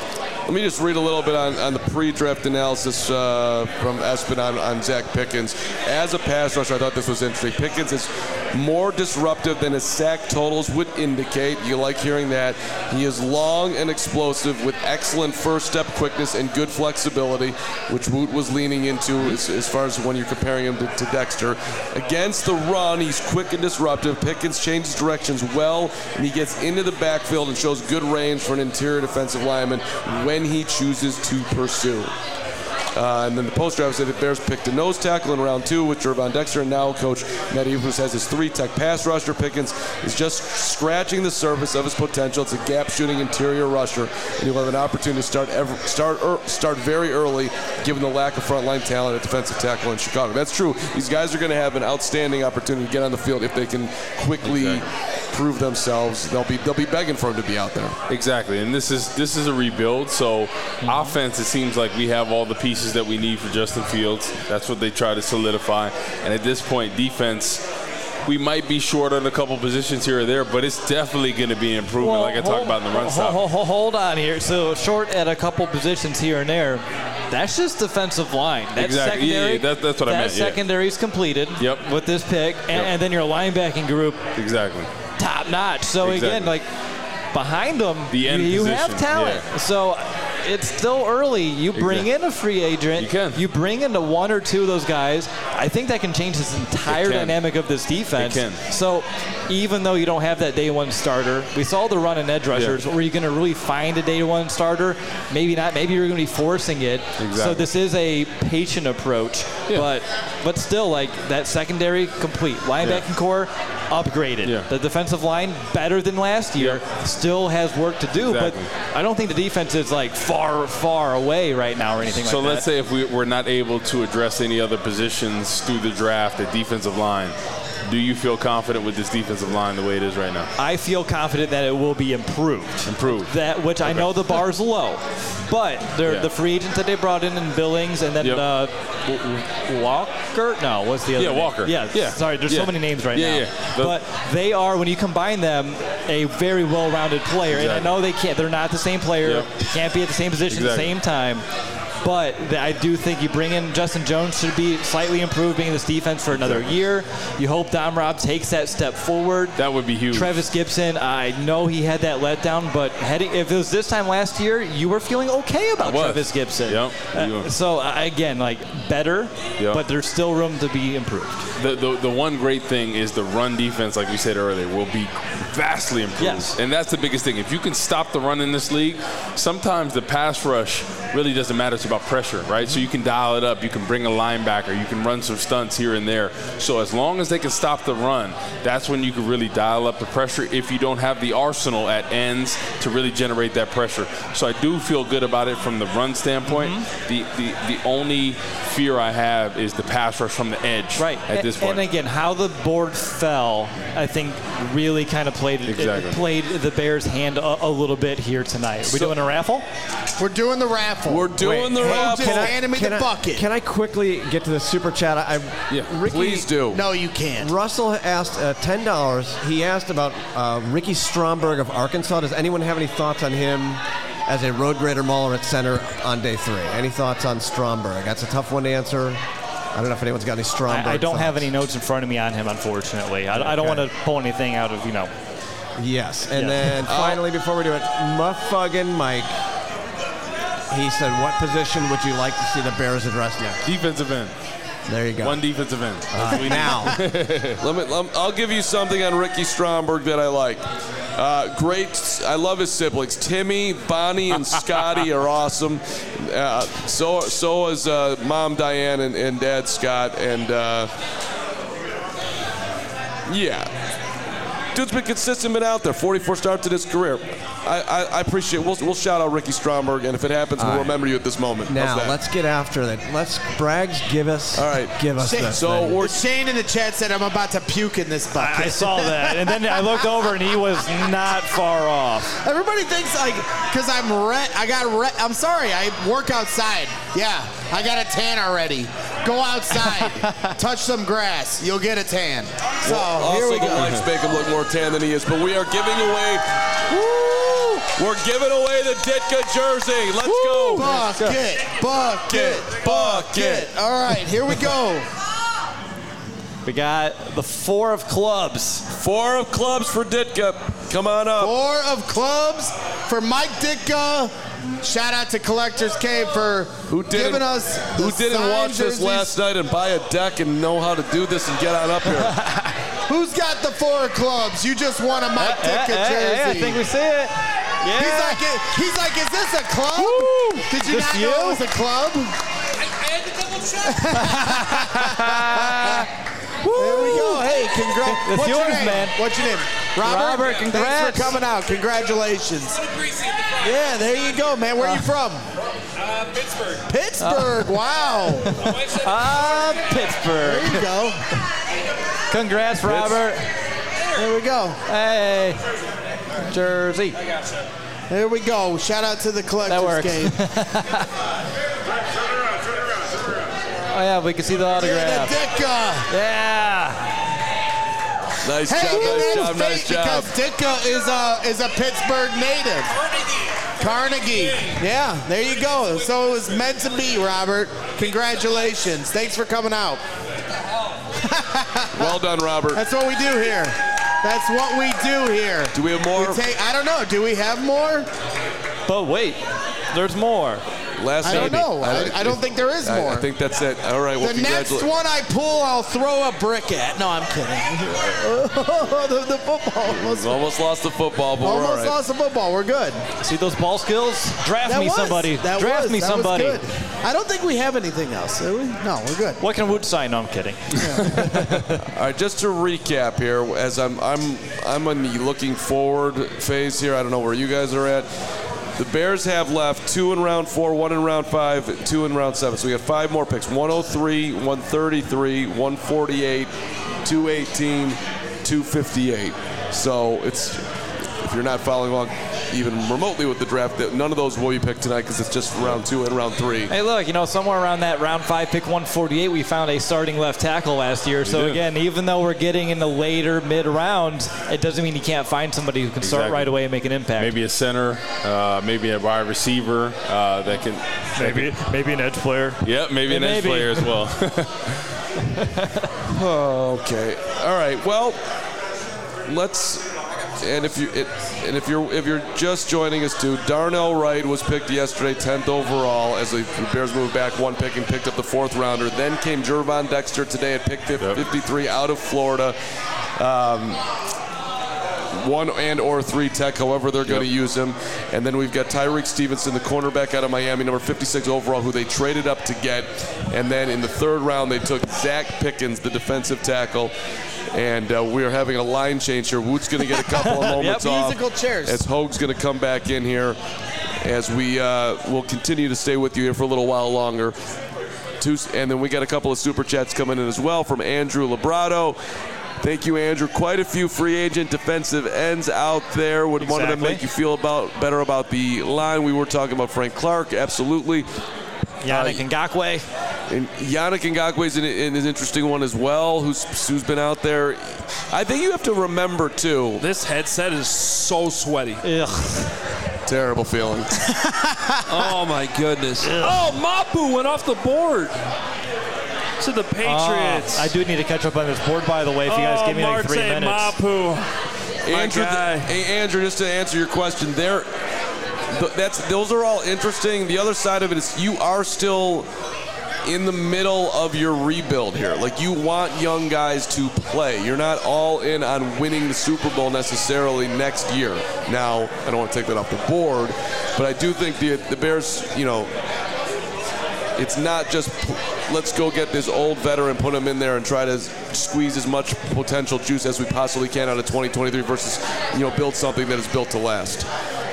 let me just read a little bit on, on the pre-draft analysis uh, from Espen on, on Zach Pickens. As a pass rusher, I thought this was interesting. Pickens is more disruptive than his sack totals would indicate. You like hearing that. He is long and explosive with excellent first step quickness and good flexibility, which Woot was leaning into as, as far as when you're comparing him to, to Dexter. Against the run, he's quick and disruptive. Pickens changes directions well, and he gets into the backfield and shows good range for an interior defensive lineman when he chooses to pursue. Uh, and then the post-draft said the Bears picked a nose tackle in round two with Gervon Dexter, and now Coach Matt Eberflus has his three-tech pass rusher. Pickens is just scratching the surface of his potential. It's a gap-shooting interior rusher, and he'll have an opportunity to start ever, start er, start very early, given the lack of frontline talent at defensive tackle in Chicago. That's true. These guys are going to have an outstanding opportunity to get on the field if they can quickly exactly. prove themselves. They'll be they'll be begging for him to be out there. Exactly, and this is this is a rebuild. So mm-hmm. offense, it seems like we have all the pieces that we need for Justin Fields. That's what they try to solidify. And at this point, defense, we might be short on a couple positions here or there, but it's definitely going to be an improvement, well, like I hold, talked about in the run stop. Hold, hold, hold on here. So short at a couple positions here and there. That's just defensive line. That exactly. secondary, yeah, yeah, that, that's what that I meant. That secondary is completed yep. with this pick, and, yep. and then your linebacking group. Exactly. Top notch. So exactly. again, like behind them, the end you position. have talent. Yeah. So it's still early. You bring exactly. in a free agent. You can. You bring into one or two of those guys. I think that can change this entire dynamic of this defense. It can. So even though you don't have that day one starter, we saw the run and edge rushers. Yeah. Were you going to really find a day one starter? Maybe not. Maybe you're going to be forcing it. Exactly. So this is a patient approach. Yeah. But but still, like that secondary complete. Linebacking yeah. core upgraded. Yeah. The defensive line better than last year. Yeah. Still has work to do. Exactly. But I don't think the defense is like far, far away right now or anything so like that. So let's say if we, we're not able to address any other positions through the draft, the defensive line, do you feel confident with this defensive line the way it is right now? I feel confident that it will be improved. Improved. That which okay. I know the bar's low, but yeah. the free agents that they brought in in Billings and then yep. uh, Walker. No, what's the other? Yeah, name? Walker. Yeah, yeah. Sorry, there's yeah. so many names right yeah, now. Yeah. The, but they are, when you combine them, a very well-rounded player. Exactly. And I know they can't. They're not the same player. Yep. Can't be at the same position exactly. at the same time. But I do think you bring in Justin Jones should be slightly improving this defense for another exactly. year. You hope Dom Robb takes that step forward. That would be huge. Travis Gibson, I know he had that letdown, but heading, if it was this time last year, you were feeling okay about Travis Gibson. Yep. Uh, so, uh, again, like, better, yep. but there's still room to be improved. The, the the one great thing is the run defense, like we said earlier, will be vastly improved. Yes. And that's the biggest thing. If you can stop the run in this league, sometimes the pass rush really doesn't matter. It's about pressure, right? So you can dial it up. You can bring a linebacker. You can run some stunts here and there. So as long as they can stop the run, that's when you can really dial up the pressure if you don't have the arsenal at ends to really generate that pressure. So I do feel good about it from the run standpoint. Mm-hmm. The, the, the only fear I have is the pass rush from the edge right. at this and, point. And again, how the board fell, I think, really kind of played exactly. it played the Bears' hand a, a little bit here tonight. Are we so, doing a raffle? We're doing the raffle. We're doing Wait, the raffle. Just hand me can the I, bucket. Can I quickly get to the super chat? I, yeah, Ricky, please do. No, you can't. Russell asked uh, ten dollars. He asked about uh, Ricky Stromberg of Arkansas. Does anyone have any thoughts on him as a road grader mauler at center on day three? Any thoughts on Stromberg? That's a tough one to answer. I don't know if anyone's got any Stromberg I, I don't thoughts. have any notes in front of me on him, unfortunately. I, okay. I don't want to pull anything out of, you know. Yes. And yeah. then finally, before we do it, Muffuggin Mike. He said, what position would you like to see the Bears address next? Defensive end. There you go. One defensive end. Uh, now. let me, let me, I'll give you something on Ricky Stromberg that I like. Uh, great. I love his siblings. Timmy, Bonnie, and Scotty are awesome. Uh, so so is uh, Mom Diane and, and Dad Scott. And, uh, yeah. Dude's been consistent, been out there. forty-four starts in his career. I, I, I appreciate. We'll we'll shout out Ricky Stromberg, and if it happens, All we'll right. remember you at this moment. Now let's get after that. Let's Braggs give us. All right, give us Shane, this. so thing. we're, Shane in the chat said I'm about to puke in this bucket. I saw that, and then I looked over, and he was not far off. Everybody thinks like because I'm red. I got red. I'm sorry. I work outside. Yeah, I got a tan already. Go outside, touch some grass. You'll get a tan. So well, here also we the go. lights make him look more tan than he is. But we are giving away. Woo! We're giving away the Ditka jersey. Let's Woo! go. Bucket, bucket, bucket. All right, here we go. We got the four of clubs. Four of clubs for Ditka. Come on up. Four of clubs for Mike Ditka. Shout out to Collector's Cave for who giving us Who didn't watch jerseys. this last night and buy a deck and know how to do this and get on up here? Who's got the four clubs? You just won a Mike uh, Ditka uh, jersey. Uh, I think we see it. Yeah. He's like, he's like, is this a club? Woo! Did you this not you? know it was a club? I, I had to double check. There we go. Hey, congrats. It's What's yours, your name? man. What's your name? Robert. Robert, congrats. Thanks for coming out. Congratulations. Yeah, there you go, man. Where are you from? Uh, Pittsburgh. Pittsburgh. Wow. Ah, uh, Pittsburgh. There you go. Congrats, Robert. There we go. Hey. Jersey. I gotcha. There we go. Shout out to the Collector's Game. Oh, yeah, we can see the autograph. Yeah, the Ditka. Yeah. Nice hey, job, nice job, nice nice job. Because Ditka is a, is a Pittsburgh native. Carnegie. Yeah, there you go. So it was meant to be, Robert. Congratulations. Thanks for coming out. Well done, Robert. That's what we do here. That's what we do here. Do we have more? We take, I don't know. Do we have more? But wait, there's more. Last I don't know. I, I don't think there is I, more. I think that's it. All right. Well, the next one I pull, I'll throw a brick at. No, I'm kidding. the, the football. Almost, almost lost the football, but almost we're all right. lost the football. We're good. See those ball skills? Draft that me was, somebody. That Draft was, me that somebody. Was good. I don't think we have anything else. Do we? No, we're good. What can Wood sign? No, I'm kidding. Yeah. All right, just to recap here, as I'm I'm I'm in the looking forward phase here. I don't know where you guys are at. The Bears have left two in round four, one in round five, two in round seven. So we got five more picks: one oh three, one thirty-three, one forty-eight, two eighteen, two fifty-eight. So it's, if you're not following along even remotely with the draft, that none of those will be picked tonight because it's just round two and round three. Hey, look, you know, somewhere around that round five, pick one forty-eight, we found a starting left tackle last year. We so, did. again, even though we're getting in the later mid-round, it doesn't mean you can't find somebody who can start Exactly. right away and make an impact. Maybe a center, uh, maybe a wide receiver uh, that can. Maybe maybe an edge player. Yep, maybe an Maybe. edge player as well. Okay. All right. Well, let's. And if you it, and if you're if you're just joining us too, Darnell Wright was picked yesterday, tenth overall, as the Bears moved back one pick and picked up the fourth rounder. Then came Jervon Dexter today at pick fifty-three out of Florida. Um, one and or three tech, however they're going to Yep. use him. And then we've got Tyreek Stevenson, the cornerback out of Miami, number fifty-six overall, who they traded up to get. And then in the third round, they took Zach Pickens, the defensive tackle. And uh, we are having a line change here. Woot's going to get a couple of moments Yep. off. Musical chairs. As Hoag's going to come back in here, as we uh, will continue to stay with you here for a little while longer. Two, and then we got a couple of super chats coming in as well from Andrew Labrado. Thank you, Andrew. Quite a few free agent defensive ends out there. Would one of them Exactly. make you feel about better about the line? We were talking about Frank Clark. Absolutely. Yannick Uh, Ngakoue. And Yannick Ngakoue is an, an interesting one as well, who's who's been out there. I think you have to remember, too. This headset is so sweaty. Ugh. Terrible feeling. Oh, my goodness. Oh, Mapu went off the board to the Patriots. Uh, I do need to catch up on this board, by the way, if you guys oh, give me like three Marte minutes. Mapu. Andrew, guy. hey, Andrew, just to answer your question, there, th- that's those are all interesting. The other side of it is you are still in the middle of your rebuild here. Like, you want young guys to play. You're not all in on winning the Super Bowl necessarily next year. Now, I don't want to take that off the board, but I do think the the Bears, you know, it's not just let's go get this old veteran, put him in there, and try to squeeze as much potential juice as we possibly can out of twenty twenty-three versus, you know, build something that is built to last.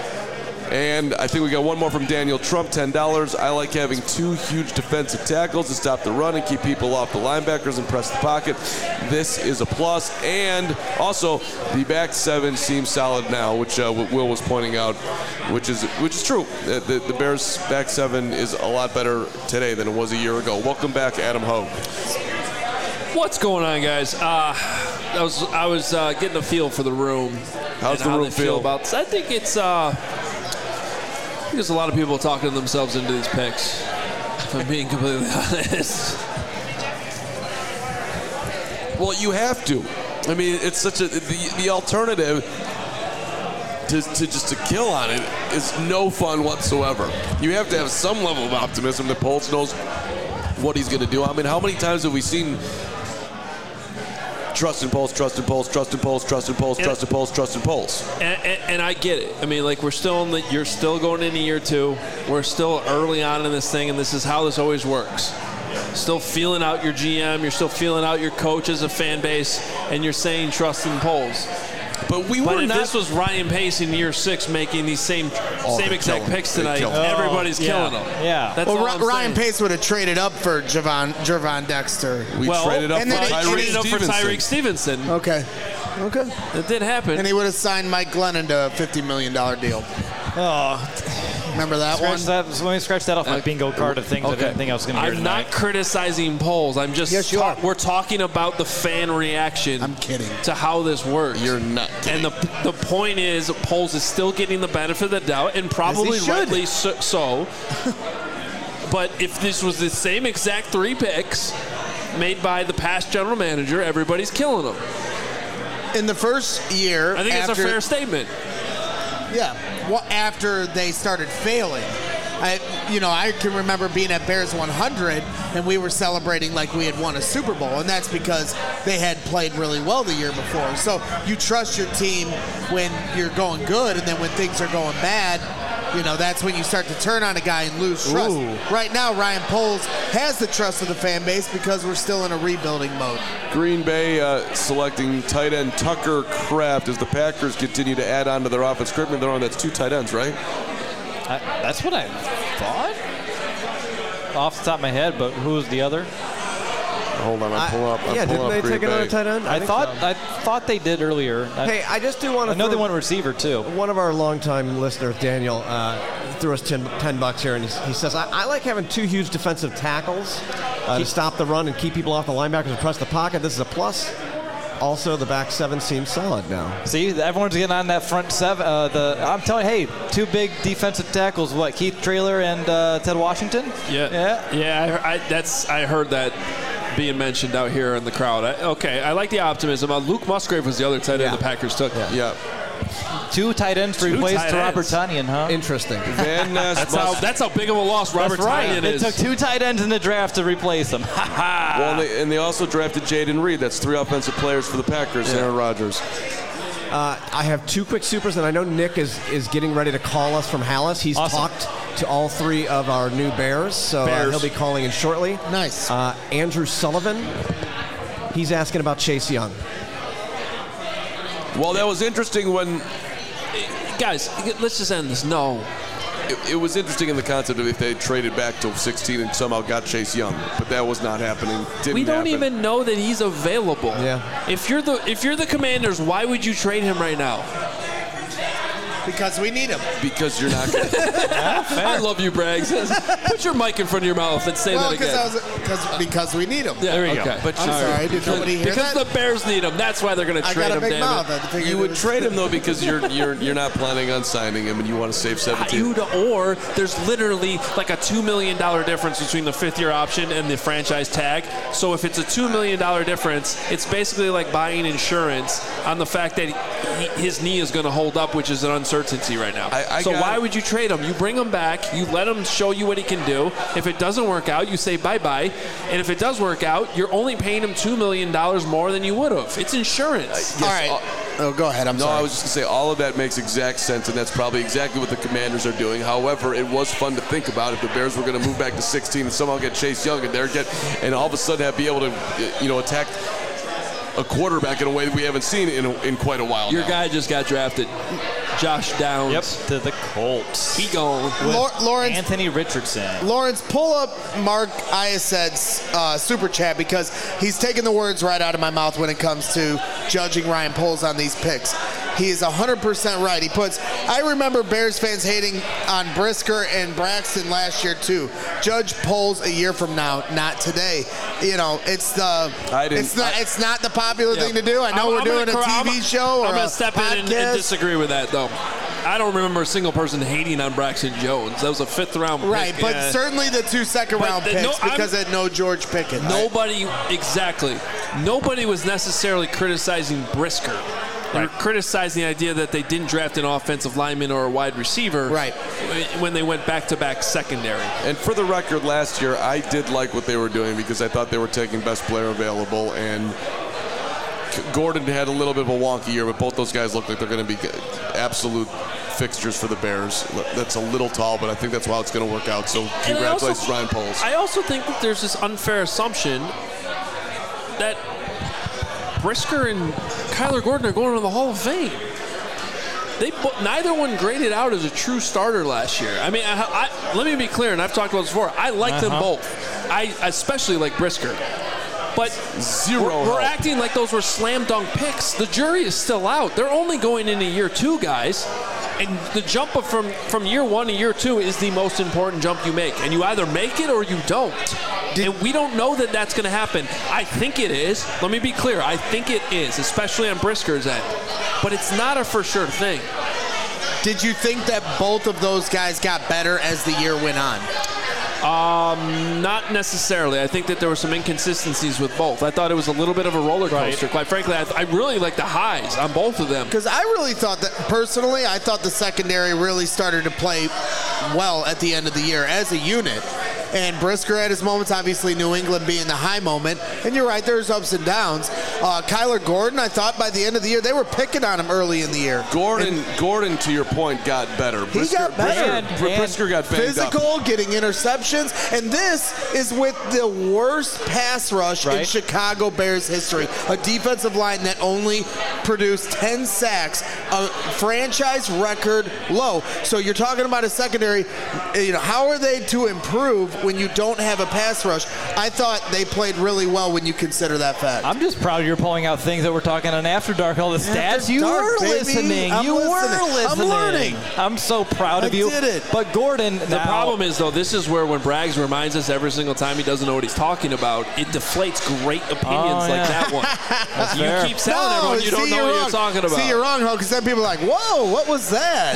And I think we got one more from Daniel Trump, ten dollars. I like having two huge defensive tackles to stop the run and keep people off the linebackers and press the pocket. This is a plus. And also, the back seven seems solid now, which uh, Will was pointing out, which is which is true. The, the, the Bears' back seven is a lot better today than it was a year ago. Welcome back, Adam Hoag. What's going on, guys? Uh, I was I was uh, getting a feel for the room. How's and the how room they feel feel? about this. I think it's uh, think there's a lot of people talking themselves into these picks, if I'm being completely honest. Well, you have to. I mean, it's such a the, the alternative to, to just to kill on it is no fun whatsoever. You have to have some level of optimism that Poles knows what he's going to do. I mean, how many times have we seen trust in Poles, trust in Poles, trust in Poles, trust in Poles, trust in Poles, trust in Poles? And, and, and I get it. I mean, like, we're still in the, you're still going into year two. We're still early on in this thing, and this is how this always works. Still feeling out your G M, you're still feeling out your coach as a fan base, and you're saying trust in Poles. But we but were if not. This was Ryan Pace in year six making these same Oh, same exact killing. picks They're tonight. killing. Everybody's Oh, killing yeah. them. Yeah. That's well, all Ry- I'm Ryan saying. Pace would have traded up for Javon, Javon Dexter. We well, traded up and for then they Tyreek traded up for Stevenson. Tyreek Stevenson. Okay. Okay. It did happen. And he would have signed Mike Glennon to a fifty million dollars deal. Oh, Remember that scratch one? that, so let me scratch that off my Uh, bingo card of things I okay. didn't think I was going to hear I'm tonight. not criticizing polls. I'm just Yes, you talk- are. we're talking about the fan reaction. I'm kidding. To how this works. You're not kidding. And the the point is, Poles is still getting the benefit of the doubt, and probably As he should. rightly so. so. But if this was the same exact three picks made by the past general manager, everybody's killing them. In the first year, I think after, it's a fair statement. Yeah. Well, after they started failing, I, you know, I can remember being at Bears one hundred, and we were celebrating like we had won a Super Bowl, and that's because they had played really well the year before. So you trust your team when you're going good, and then when things are going bad, you know, that's when you start to turn on a guy and lose trust. Ooh. Right now, Ryan Poles has the trust of the fan base because we're still in a rebuilding mode. Green Bay uh, selecting tight end Tucker Kraft as the Packers continue to add on to their offense. Correct me if I'm wrong, that's two tight ends, right? I, that's what I thought off the top of my head, but who was the other? Hold on, I'm pulling up. I'm yeah, pulling didn't up they Green take another Bay. tight end? I, think thought so. I thought they did earlier. I, Hey, I just do want I to. know they want a receiver too. One of our longtime listeners, Daniel, uh, threw us ten, ten bucks here, and he, he says, I, I like having two huge defensive tackles uh, to stop the run and keep people off the linebackers and press the pocket. This is a plus. Also, the back seven seems solid now. See, everyone's getting on that front seven. Uh, the I'm telling you, hey, two big defensive tackles. What, Keith Traylor and uh, Ted Washington? Yeah, Yeah. yeah. I, I, that's I heard that being mentioned out here in the crowd. I, okay, I like the optimism. Uh, Luke Musgrave was the other tight end Yeah. the Packers took. Yeah. Yeah. Two tight ends to Two replace tight to Robert ends. Tonyan, huh? Interesting. Van Ness That's how must- that's how big of a loss Robert That's right. Tonyan They is. took two tight ends in the draft to replace them. Well, and they, and they also drafted Jaden Reed. That's three offensive players for the Packers. Aaron Rodgers. Uh, I have two quick supers, and I know Nick is, is getting ready to call us from Hallis. He's Awesome. talked to all three of our new Bears, so uh, Bears. he'll be calling in shortly. Nice. Uh, Andrew Sullivan, he's asking about Chase Young. Well, that was interesting when Guys, let's just end this. No. it, it was interesting in the concept of if they traded back to sixteen and somehow got Chase Young, but that was not happening. Didn't We don't happen. even know that he's available. Yeah. If you're the if you're the Commanders, why would you trade him right now? Because we need him. because you're not going to. I love you, Braggs. Put your mic in front of your mouth and say Well, that again. because I was because because we need him. Yeah, there you Okay. go. But I'm you- sorry, did nobody hear because that? the Bears need him. That's why they're going to I trade got a him. big damn mouth. it. I figured You it would was- trade him though because you're you're you're not planning on signing him and you want to save seventeen. You'd, or there's literally like a two million dollars difference between the fifth year option and the franchise tag. So if it's a two million dollars difference, it's basically like buying insurance on the fact that he, his knee is going to hold up, which is an uncertainty right now. I- I so got- why would you trade him? You bring him back, you let him show you what he can do. If it doesn't work out, you say bye-bye. And if it does work out, you're only paying him two million dollars more than you would have. It's insurance. All right. all- Oh, go ahead. I'm No, sorry. I was just going to say all of that makes exact sense, and that's probably exactly what the Commanders are doing. However, it was fun to think about if the Bears were going to move back to sixteen and somehow get Chase Young and they're get and all of a sudden have be able to, you know, attack a quarterback in a way that we haven't seen in in quite a while. Your now. guy just got drafted. Josh Downs. Yep, to the Colts. He gone. Lor- Lawrence, Anthony Richardson. Lawrence, pull up Mark Iased's uh, super chat because he's taking the words right out of my mouth when it comes to judging Ryan Poles on these picks. He is one hundred percent right. He puts, I remember Bears fans hating on Brisker and Braxton last year too. Judge Poles a year from now, not today. You know, it's the I didn't- it's not I- it's not the popular Yeah. thing to do. I know I'm- we're I'm doing gonna a cor- T V I'm, show or I'm a gonna step in and, and podcast. disagree with that though. I don't remember a single person hating on Braxton Jones. That was a fifth round pick. Right, but yeah. certainly the two second But round the- picks no, because it no George Pickens. Nobody, exactly. Nobody was necessarily criticizing Brisker. They were criticizing the idea that they didn't draft an offensive lineman or a wide receiver right. when they went back-to-back secondary. And for the record, last year, I did like what they were doing because I thought they were taking best player available, and Gordon had a little bit of a wonky year, but both those guys look like they're going to be absolute fixtures for the Bears. That's a little tall, but I think that's how it's going to work out. So congratulations, Ryan Poles. I also think that there's this unfair assumption that Brisker and Kyler Gordon are going to the Hall of Fame. They neither one graded out as a true starter last year. I mean, I, I, let me be clear, and I've talked about this before. I like uh-huh. them both. I especially like Brisker. But Zero we're, we're acting like those were slam dunk picks. The jury is still out. They're only going into year two, guys. And the jump up from, from year one to year two is the most important jump you make. And you either make it or you don't. Did, and we don't know that that's going to happen. I think it is. Let me be clear. I think it is, especially on Brisker's end. But it's not a for sure thing. Did you think that both of those guys got better as the year went on? Um, not necessarily. I think that there were some inconsistencies with both. I thought it was a little bit of a roller coaster. Right. Quite frankly, I, I really like the highs on both of them. Because I really thought that, personally, I thought the secondary really started to play well at the end of the year as a unit. And Brisker had his moments, obviously New England being the high moment. And you're right, there's ups and downs. Uh, Kyler Gordon, I thought by the end of the year, they were picking on him early in the year. Gordon, and Gordon, to your point, got better. He Brisker, got better. And, Brisker, Brisker got banged physical, up. getting interceptions. And this is with the worst pass rush right. in Chicago Bears history. A defensive line that only produced ten sacks, a franchise record low. So you're talking about a secondary. You know, how are they to improve when you don't have a pass rush? I thought they played really well when you consider that fact. I'm just proud you're pulling out things that we're talking on After Dark, all the stats. After you dark, were baby. listening. I'm you listening. were listening. I'm learning. I'm so proud of I you. did it. But Gordon, the now, problem is, though, this is where when Braggs reminds us every single time he doesn't know what he's talking about, it deflates great opinions oh, yeah. like that one. That's you fair. keep telling no, everyone you don't know what wrong. you're talking about. See, you're wrong, Ho, because then people are like, whoa, what was that?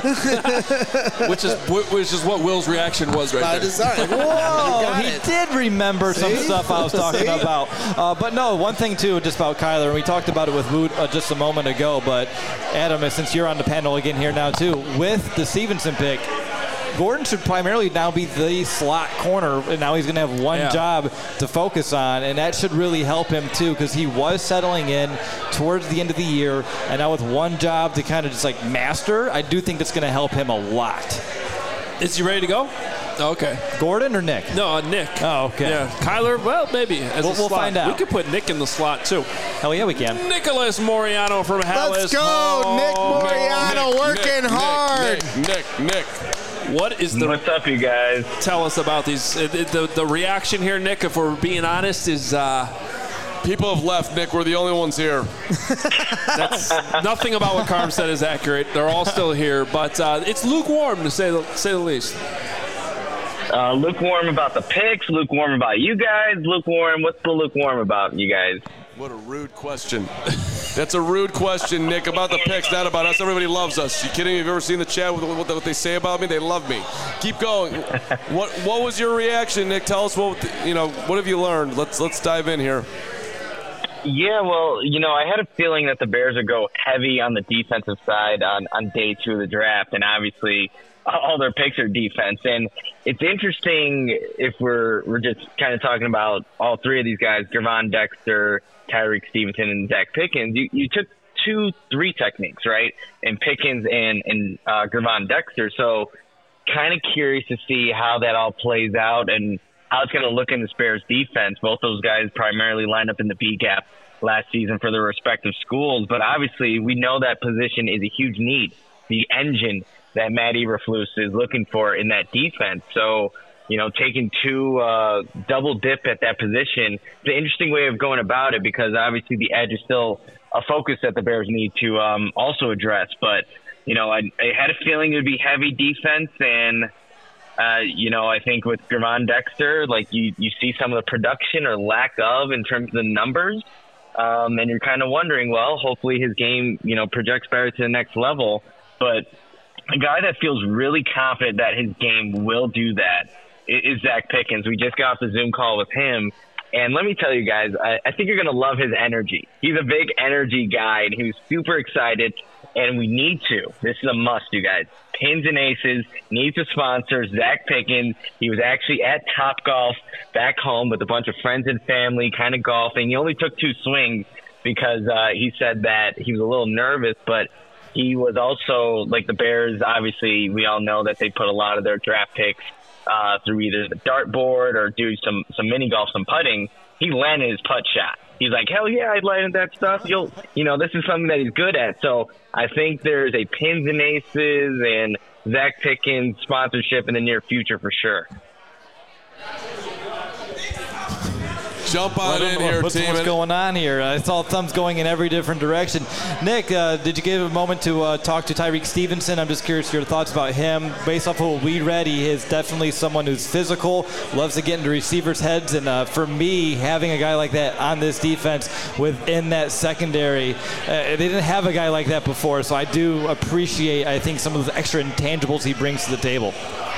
which is which is what Will's reaction was right By there. design. Whoa, he it. did remember See? some stuff I was talking See? about. Uh, but no, one thing, too, just about Kyler, and we talked about it with Woot uh, just a moment ago, but Adam, since you're on the panel again here now, too, with the Stevenson pick, Gordon should primarily now be the slot corner, and now he's going to have one yeah. job to focus on, and that should really help him, too, because he was settling in towards the end of the year, and now with one job to kind of just, like, master, I do think that's going to help him a lot. Is he ready to go? Okay. Gordon or Nick? No, uh, Nick. Oh, okay. Yeah. Kyler, well, maybe as we'll, a we'll slot. find out. We could put Nick in the slot, too. Hell yeah, we can. Nicholas Moriano from Hallis. Let's go, Nick Moriano, Nick, working Nick, hard. Nick, Nick, Nick. What is the? What's up, you guys? Tell us about these. Uh, the the reaction here, Nick. If we're being honest, is uh, people have left. Nick, we're the only ones here. That's nothing about what Carm said is accurate. They're all still here, but uh, it's lukewarm to say the, say the least. Uh, lukewarm about the picks. Lukewarm about you guys. Lukewarm. What's the lukewarm about, you guys? What a rude question. That's a rude question, Nick, about the picks, not about us. Everybody loves us. You kidding me? Have you ever seen the chat with what, what they say about me? They love me. Keep going. What What was your reaction, Nick? Tell us what you know. What have you learned? Let's let's dive in here. Yeah, well, you know, I had a feeling that the Bears would go heavy on the defensive side on, on day two of the draft, and obviously all their picks are defense. And it's interesting if we're we're just kind of talking about all three of these guys, Gervon Dexter, Tyreek Stevenson, and Zach Pickens. You, you took two, three techniques, right? And Pickens and, and uh, Gervon Dexter. So kind of curious to see how that all plays out and how it's going to look in the Bears defense. Both those guys primarily lined up in the B gap last season for their respective schools. But obviously we know that position is a huge need, the engine that Matt Eberflus is looking for in that defense. So, you know, taking two uh, double dip at that position, it's an interesting way of going about it because obviously the edge is still a focus that the Bears need to um, also address. But, you know, I, I had a feeling it would be heavy defense and, uh, you know, I think with Gervon Dexter, like you, you see some of the production or lack of in terms of the numbers. Um, and you're kind of wondering, well, hopefully his game, you know, projects better to the next level. But a guy that feels really confident that his game will do that is Zach Pickens. We just got off the Zoom call with him. And let me tell you guys, I, I think you're going to love his energy. He's a big energy guy, and he was super excited. And we need to. This is a must, you guys. Pins and Aces needs to sponsor Zach Pickens. He was actually at Topgolf back home with a bunch of friends and family, kind of golfing. He only took two swings because uh, he said that he was a little nervous, but he was also, like the Bears, obviously, we all know that they put a lot of their draft picks uh, through either the dartboard or do some, some mini golf, some putting. He landed his putt shot. He's like, hell yeah, I landed that stuff. You'll, you know, this is something that he's good at. So I think there's a Pins and Aces and Zach Pickens sponsorship in the near future for sure. Jump on in here, what's, team. What's going on here? I saw thumbs going in every different direction. Nick, uh, did you give a moment to uh, talk to Tyrique Stevenson? I'm just curious your thoughts about him. Based off of what we read, he is definitely someone who's physical, loves to get into receivers' heads. And uh, for me, having a guy like that on this defense within that secondary, uh, they didn't have a guy like that before. So I do appreciate, I think, some of the extra intangibles he brings to the table.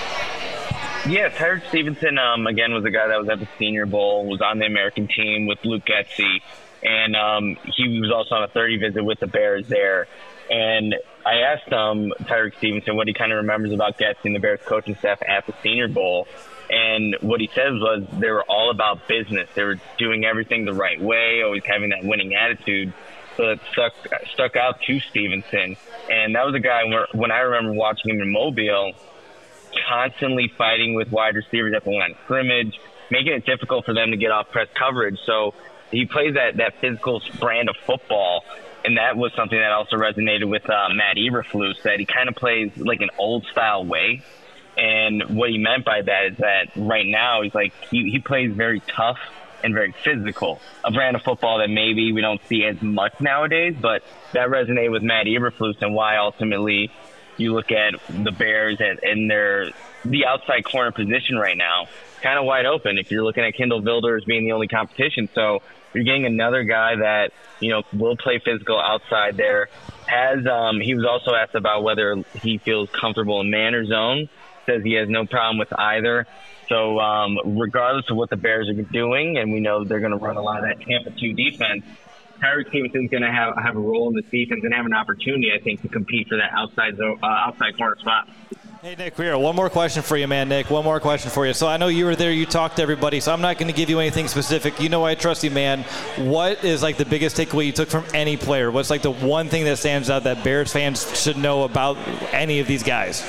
Yeah, Tyrique Stevenson, um, again, was a guy that was at the Senior Bowl, was on the American team with Luke Getsy, and um, he was also on a thirty visit with the Bears there. And I asked um, Tyrique Stevenson what he kind of remembers about Getsy and the Bears coaching staff at the Senior Bowl. And what he says was they were all about business. They were doing everything the right way, always having that winning attitude. So it stuck, stuck out to Stevenson. And that was a guy where, when I remember watching him in Mobile, constantly fighting with wide receivers at the line of scrimmage, making it difficult for them to get off press coverage. So he plays that, that physical brand of football, and that was something that also resonated with uh, Matt Eberflus, that he kind of plays like an old-style way. And what he meant by that is that right now he's like he, he plays very tough and very physical, a brand of football that maybe we don't see as much nowadays, but that resonated with Matt Eberflus and why ultimately – you look at the Bears and, and their the outside corner position right now, kind of wide open if you're looking at Kindle Vildor as being the only competition. So you're getting another guy that, you know, will play physical outside there. Has um, he was also asked about whether he feels comfortable in man or zone. Says he has no problem with either. So um, regardless of what the Bears are doing, and we know they're going to run a lot of that Tampa two defense, Tyrique Stevenson's going to have have a role in this defense and have an opportunity, I think, to compete for that outside zone, uh, outside corner spot. Hey, Nick, here, one more question for you, man, Nick. One more question for you. So I know you were there, you talked to everybody, so I'm not going to give you anything specific. You know I trust you, man. What is, like, the biggest takeaway you took from any player? What's, like, the one thing that stands out that Bears fans should know about any of these guys?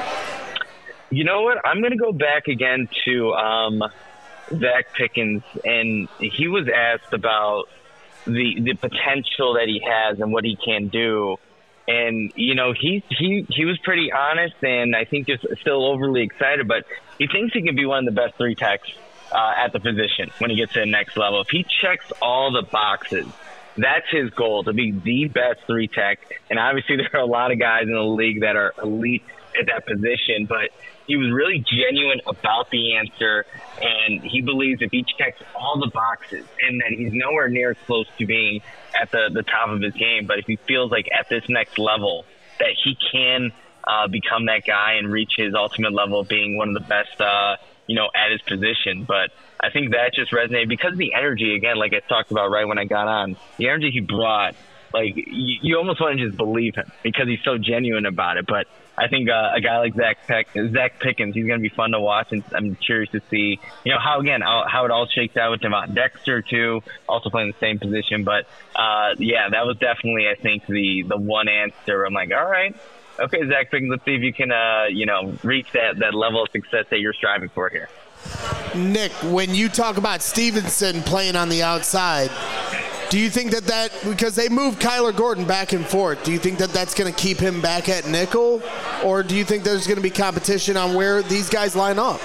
You know what? I'm going to go back again to um, Zach Pickens, and he was asked about the the potential that he has and what he can do. And, you know, he he he was pretty honest and I think just still overly excited, but he thinks he can be one of the best three techs uh, at the position when he gets to the next level. If he checks all the boxes, that's his goal, to be the best three tech. And obviously there are a lot of guys in the league that are elite at that position, but he was really genuine about the answer, and he believes if he checks all the boxes and that he's nowhere near as close to being at the, the top of his game, but if he feels like at this next level that he can uh, become that guy and reach his ultimate level of being one of the best, uh, you know, at his position. But I think that just resonated because of the energy, again, like I talked about right when I got on, the energy he brought. Like, you, you almost want to just believe him because he's so genuine about it. But I think uh, a guy like Zach Peck, Zach Pickens, he's going to be fun to watch, and I'm curious to see, you know, how again how, how it all shakes out with Devon Dexter too, also playing the same position. But uh, yeah, that was definitely, I think, the the one answer. I'm like, all right, okay, Zach Pickens, let's see if you can, uh, you know, reach that that level of success that you're striving for here. Nick, when you talk about Stevenson playing on the outside, do you think that that, because they moved Kyler Gordon back and forth, do you think that that's going to keep him back at nickel? Or do you think there's going to be competition on where these guys line up?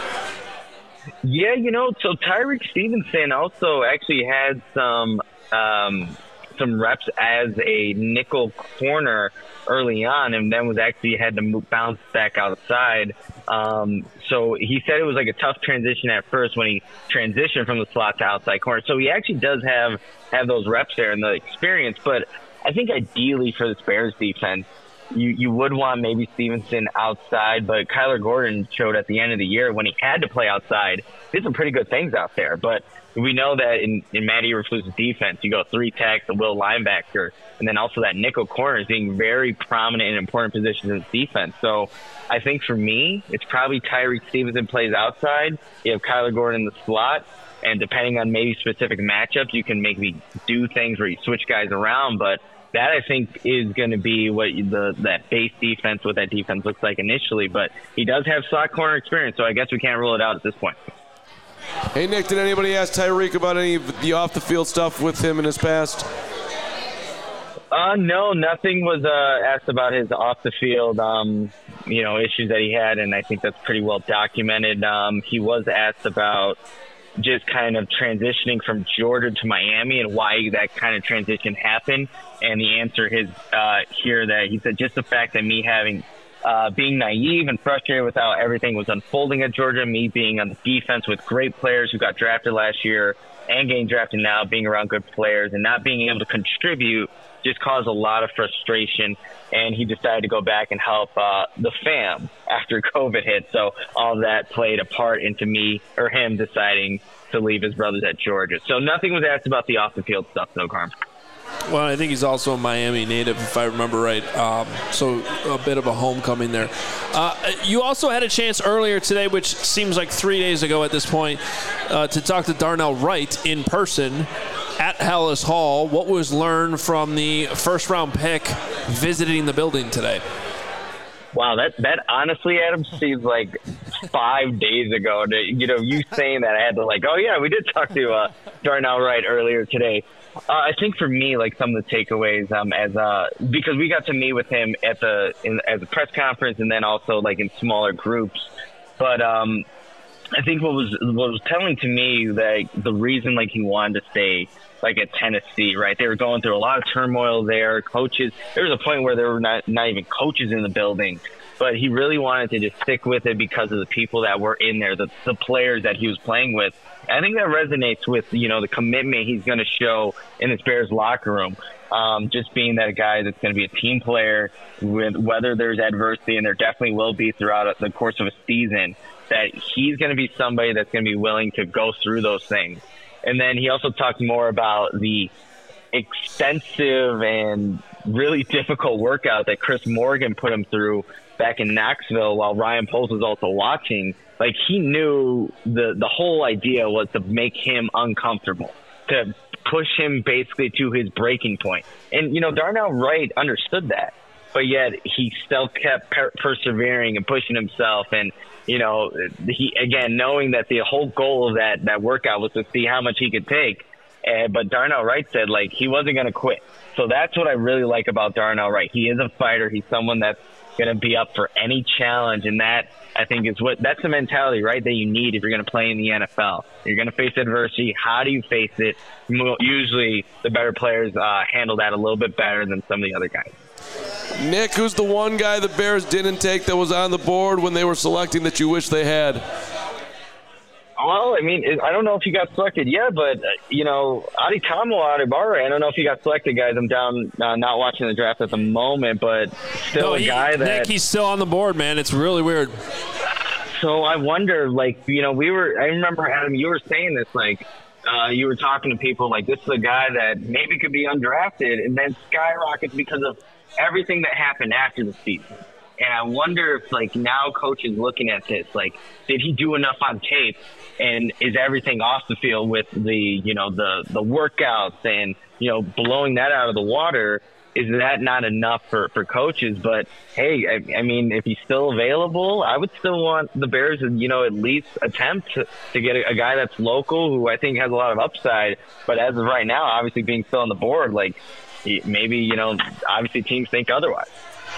Yeah, you know, so Tyrique Stevenson also actually had some um, some reps as a nickel corner early on, and then was actually had to move, bounce back outside. Um, so he said it was like a tough transition at first when he transitioned from the slot to outside corner. So he actually does have, have those reps there and the experience. But I think ideally for this Bears defense, you, you would want maybe Stevenson outside, but Kyler Gordon showed at the end of the year when he had to play outside, did some pretty good things out there. But we know that in, in Matt Eberflus's defense, you go three techs, a will linebacker, and then also that nickel corner is being very prominent in important positions in the defense. So I think for me, it's probably Tyreek Stevenson plays outside. You have Kyler Gordon in the slot. And depending on maybe specific matchups, you can maybe do things where you switch guys around. But that, I think, is going to be what the that base defense, what that defense looks like initially. But he does have slot corner experience, so I guess we can't rule it out at this point. Hey, Nick, did anybody ask Tyreek about any of the off-the-field stuff with him in his past? Uh, no, nothing was uh, asked about his off-the-field, um, you know, issues that he had, and I think that's pretty well documented. Um, he was asked about just kind of transitioning from Georgia to Miami and why that kind of transition happened. And the answer is uh, here that he said just the fact that me having uh, being naive and frustrated with how everything was unfolding at Georgia, me being on the defense with great players who got drafted last year and getting drafted now, being around good players and not being able to contribute just caused a lot of frustration, and he decided to go back and help uh, the fam after COVID hit. So all that played a part into me or him deciding to leave his brothers at Georgia. So nothing was asked about the off-the-field stuff, though, Carm. Well, I think he's also a Miami native, if I remember right. Um, so a bit of a homecoming there. Uh, you also had a chance earlier today, which seems like three days ago at this point, uh, to talk to Darnell Wright in person at Hallis Hall. What was learned from the first-round pick visiting the building today? Wow, that, that honestly, Adam, seems like five days ago. To, you know, you saying that, I had to like, oh, yeah, we did talk to uh, Darnell Wright earlier today. Uh, I think for me, like some of the takeaways, um, as uh, because we got to meet with him at the in, at the press conference and then also like in smaller groups. But um, I think what was what was telling to me that the reason like he wanted to stay like at Tennessee, right? They were going through a lot of turmoil there. Coaches, there was a point where there were not not even coaches in the building. But he really wanted to just stick with it because of the people that were in there, the, the players that he was playing with. I think that resonates with, you know, the commitment he's going to show in this Bears locker room. Um, just being that guy that's going to be a team player, with whether there's adversity, and there definitely will be throughout the course of a season, that he's going to be somebody that's going to be willing to go through those things. And then he also talked more about the extensive and really difficult workout that Chris Morgan put him through back in Knoxville while Ryan Poles was also watching. Like, he knew the the whole idea was to make him uncomfortable, to push him basically to his breaking point. And, you know, Darnell Wright understood that, but yet he still kept per- persevering and pushing himself. And, you know, he, again, knowing that the whole goal of that, that workout was to see how much he could take. Uh, but Darnell Wright said, like, he wasn't going to quit. So that's what I really like about Darnell Wright. He is a fighter. He's someone that's going to be up for any challenge, and that, I think, is what that's the mentality, right, that you need if you're going to play in the N F L. You're going to face adversity. How do you face it? Usually the better players uh, handle that a little bit better than some of the other guys. Nick, who's the one guy the Bears didn't take that was on the board when they were selecting that you wish they had? Well, I mean, I don't know if he got selected yet, but, uh, you know, Adetomo Adebawore, I don't know if he got selected, guys. I'm down uh, not watching the draft at the moment, but still no, a he, guy that... Nick, he's still on the board, man. It's really weird. So I wonder, like, you know, we were – I remember, Adam, you were saying this, like, uh, you were talking to people like, this is a guy that maybe could be undrafted and then skyrockets because of everything that happened after the season. And I wonder if, like, now coach is looking at this, like, did he do enough on tape? And is everything off the field with the, you know, the, the workouts and, you know, blowing that out of the water? Is that not enough for, for coaches? But, hey, I, I mean, if he's still available, I would still want the Bears to, you know, at least attempt to, to get a, a guy that's local who I think has a lot of upside. But as of right now, obviously being still on the board, like, maybe, you know, obviously teams think otherwise.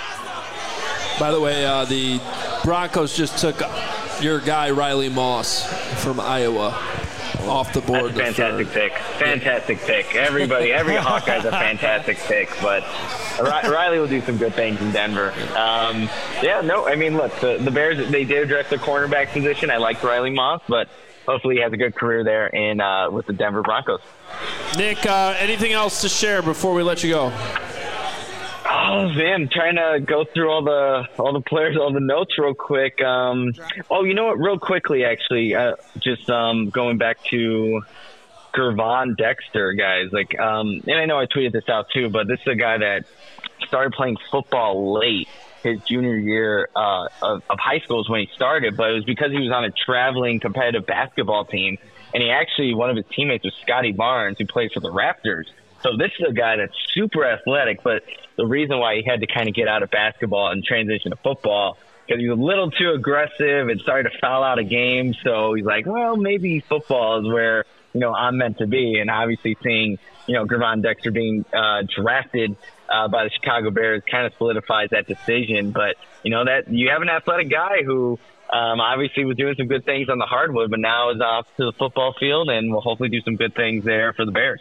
By the way, uh, the Broncos just took your guy Riley Moss from Iowa off the board. That's a fantastic pick. Fantastic pick. Everybody, every Hawkeye's a fantastic pick, but Riley will do some good things in Denver. Um, yeah, no, I mean, look, the, the Bears, they did address the cornerback position. I liked Riley Moss, but hopefully he has a good career there in uh, with the Denver Broncos. Nick, uh, anything else to share before we let you go? Oh, Oh man, trying to go through all the all the players, all the notes real quick. Um, oh, you know what? Real quickly, actually, uh, just um, going back to Gervon Dexter, guys. Like, um, and I know I tweeted this out too, but this is a guy that started playing football late his junior year uh, of, of high school is when he started, but it was because he was on a traveling competitive basketball team, and he actually one of his teammates was Scotty Barnes, who plays for the Raptors. So this is a guy that's super athletic, but the reason why he had to kind of get out of basketball and transition to football because he was a little too aggressive and started to foul out of games. So he's like, well, maybe football is where, you know, I'm meant to be. And obviously seeing, you know, Gervon Dexter being uh, drafted uh, by the Chicago Bears kind of solidifies that decision. But, you know, that you have an athletic guy who um, obviously was doing some good things on the hardwood, but now is off to the football field and will hopefully do some good things there for the Bears.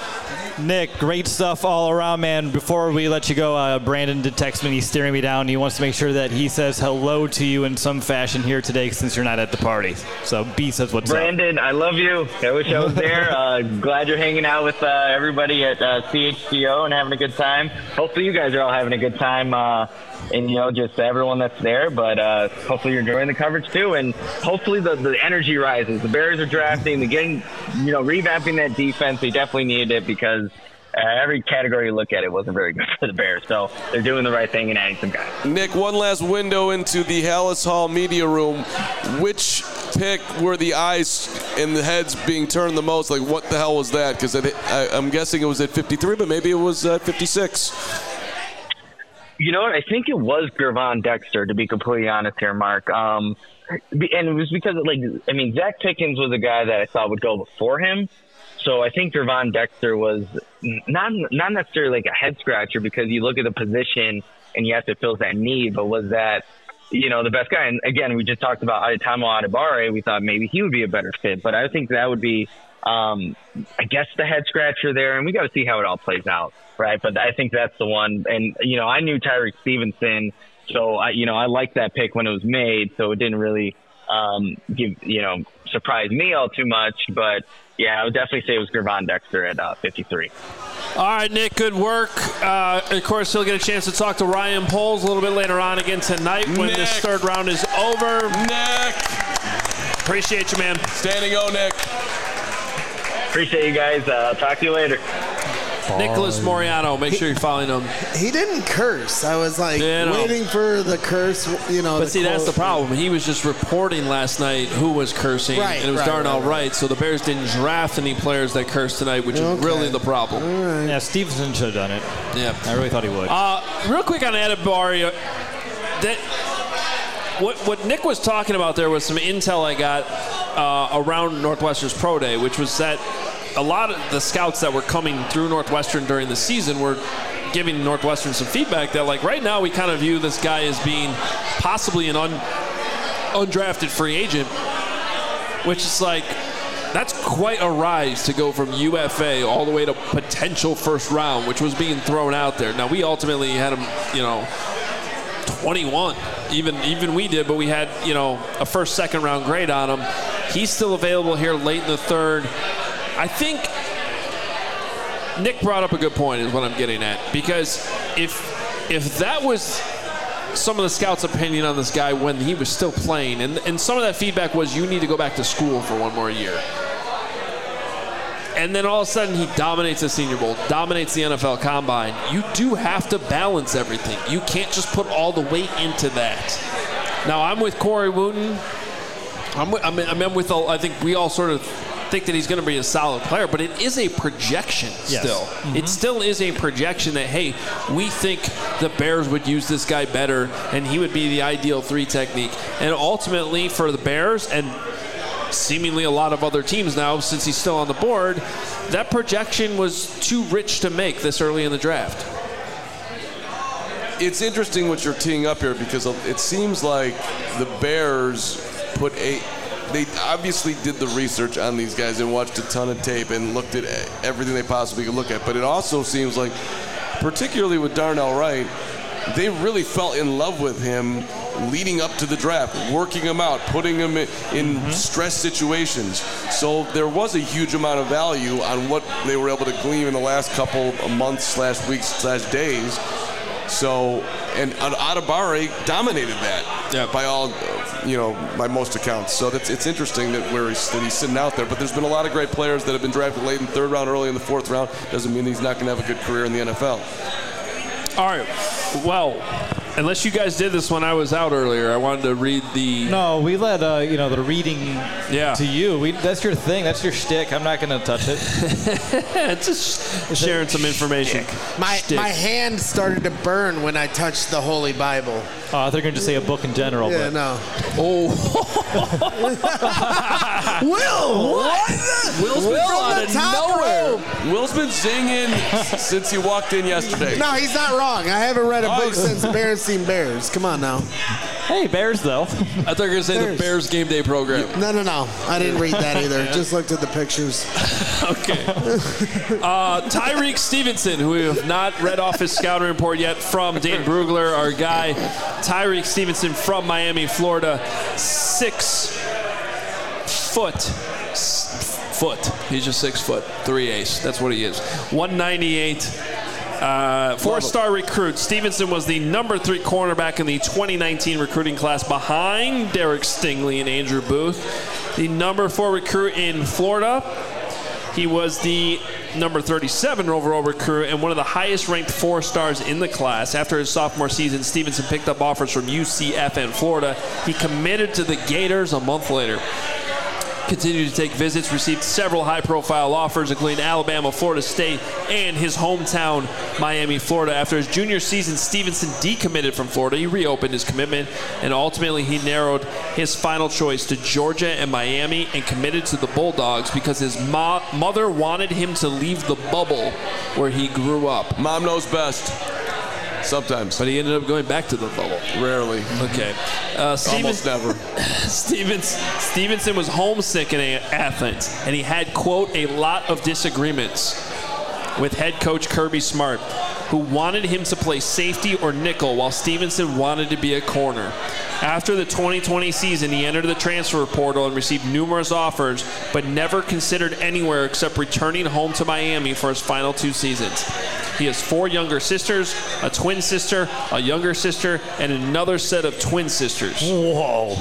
Nick, great stuff all around, man. Before we let you go, uh, Brandon did text me. He's staring me down. He wants to make sure that he says hello to you in some fashion here today since you're not at the party. So B says what's Brandon, up. Brandon, I love you. I wish I was there. uh, glad you're hanging out with uh, everybody at uh, C H C O and having a good time. Hopefully you guys are all having a good time. Uh, and, you know, just everyone that's there. But uh, hopefully you're enjoying the coverage, too. And hopefully the, the energy rises. The Bears are drafting. They're getting, you know, revamping that defense. They definitely needed it because uh, every category you look at, it wasn't very good for the Bears. So they're doing the right thing and adding some guys. Nick, one last window into the Halas Hall media room. Which pick were the eyes and the heads being turned the most? Like, what the hell was that? Because I'm guessing it was at fifty-three, but maybe it was at fifty-six. You know what? I think it was Gervon Dexter, to be completely honest here, Mark. Um, and it was because, like, I mean, Zach Pickens was a guy that I thought would go before him. So I think Gervon Dexter was not not necessarily like a head scratcher because you look at the position and you have to fill that need, but was that, you know, the best guy? And again, we just talked about Adetomo Adebawore. We thought maybe he would be a better fit, but I think that would be, um, I guess, the head scratcher there. And we got to see how it all plays out. Right, but I think that's the one. And, you know, I knew Tyreek Stevenson, so, I, you know, I liked that pick when it was made, so it didn't really um, give, you know, surprise me all too much. But, yeah, I would definitely say it was Gervon Dexter at uh, fifty-three. All right, Nick, good work. Uh, of course, you'll get a chance to talk to Ryan Poles a little bit later on again tonight when Nick. this third round is over. Nick! Appreciate you, man. Standing O, Nick. Appreciate you guys. Uh, talk to you later. Nicholas Moriano, make he, sure you're following him. He didn't curse. I was like yeah, waiting for the curse, you know. But see, quote. That's the problem. He was just reporting last night who was cursing, right, and it was right, Darnell right, Wright. So the Bears didn't draft any players that cursed tonight, which okay. is really the problem. Right. Yeah, Stevenson should have done it. Yeah, I really thought he would. Uh, real quick on Adebawore, that what what Nick was talking about there was some intel I got uh, around Northwestern's Pro Day, which was that a lot of the scouts that were coming through Northwestern during the season were giving Northwestern some feedback that, like, right now we kind of view this guy as being possibly an un, undrafted free agent, which is like, that's quite a rise to go from U F A all the way to potential first round, which was being thrown out there. Now, we ultimately had him, you know, twenty-one. Even even we did, but we had, you know, a first, second round grade on him. He's still available here late in the third. I think Nick brought up a good point is what I'm getting at, because if if that was some of the scouts' opinion on this guy when he was still playing, and, and some of that feedback was you need to go back to school for one more year, and then all of a sudden he dominates the Senior Bowl, dominates the N F L Combine, you do have to balance everything. You can't just put all the weight into that. Now, I'm with Corey Wooten. I'm, I'm, I'm with, all, I think we all sort of think that he's going to be a solid player, but it is a projection yes. still. Mm-hmm. It still is a projection that, hey, we think the Bears would use this guy better and he would be the ideal three technique. And ultimately for the Bears and seemingly a lot of other teams now, since he's still on the board, that projection was too rich to make this early in the draft. It's interesting what you're teeing up here because it seems like the Bears put a They obviously did the research on these guys and watched a ton of tape and looked at everything they possibly could look at. But it also seems like, particularly with Darnell Wright, they really fell in love with him leading up to the draft, working him out, putting him in, in mm-hmm. stress situations. So there was a huge amount of value on what they were able to glean in the last couple of months slash weeks slash days. So, and Adebawore dominated that yeah. by all, you know, by most accounts. So that's, it's interesting that, where he's, that he's sitting out there. But there's been a lot of great players that have been drafted late in the third round, early in the fourth round. Doesn't mean he's not going to have a good career in the N F L. All right. Well, unless you guys did this when I was out earlier, I wanted to read the. No, we let uh, you know the reading yeah. to you. We, that's your thing. That's your shtick. I'm not going to touch it. It's just it's sharing some information. My Shtick. my hand started to burn when I touched the Holy Bible. Oh, I thought you were going to say a book in general. Yeah, but. no. Oh. Will, what? Will's been Will brought on the out of top nowhere. row. Will's been zinging since he walked in yesterday. No, he's not wrong. I haven't read a Oh, book since Berenstein Bears. Come on now. Hey, Bears, though. I thought you were going to say Bears. the Bears game day program. No, no, no. I didn't read that either. Just looked at the pictures. Okay. Uh, Tyreek Stevenson, who we have not read off his scouting report yet from Dan Brugler, our guy. Tyreek Stevenson from Miami, Florida. Six foot. S- foot. He's just six foot. Three ace. That's what he is. one ninety-eight. Uh, four-star recruit. Stevenson was the number three cornerback in the twenty nineteen recruiting class behind Derek Stingley and Andrew Booth. The number four recruit in Florida. He was the number thirty-seven overall recruit and one of the highest-ranked four-stars in the class. After his sophomore season, Stevenson picked up offers from U C F and Florida. He committed to the Gators a month later. Continued to take visits, received several high-profile offers, including Alabama, Florida State, and his hometown, Miami, Florida. After his junior season, Stevenson decommitted from Florida. He reopened his commitment, and ultimately he narrowed his final choice to Georgia and Miami and committed to the Bulldogs because his mo- mother wanted him to leave the bubble where he grew up. Mom knows best. Sometimes. But he ended up going back to the bubble. Rarely. Okay. Uh, Almost never. Stevens, Stevenson was homesick in Athens, and he had, quote, a lot of disagreements with head coach Kirby Smart, who wanted him to play safety or nickel while Stevenson wanted to be a corner. After the twenty twenty season, he entered the transfer portal and received numerous offers, but never considered anywhere except returning home to Miami for his final two seasons. He has four younger sisters, a twin sister, a younger sister, and another set of twin sisters. Whoa.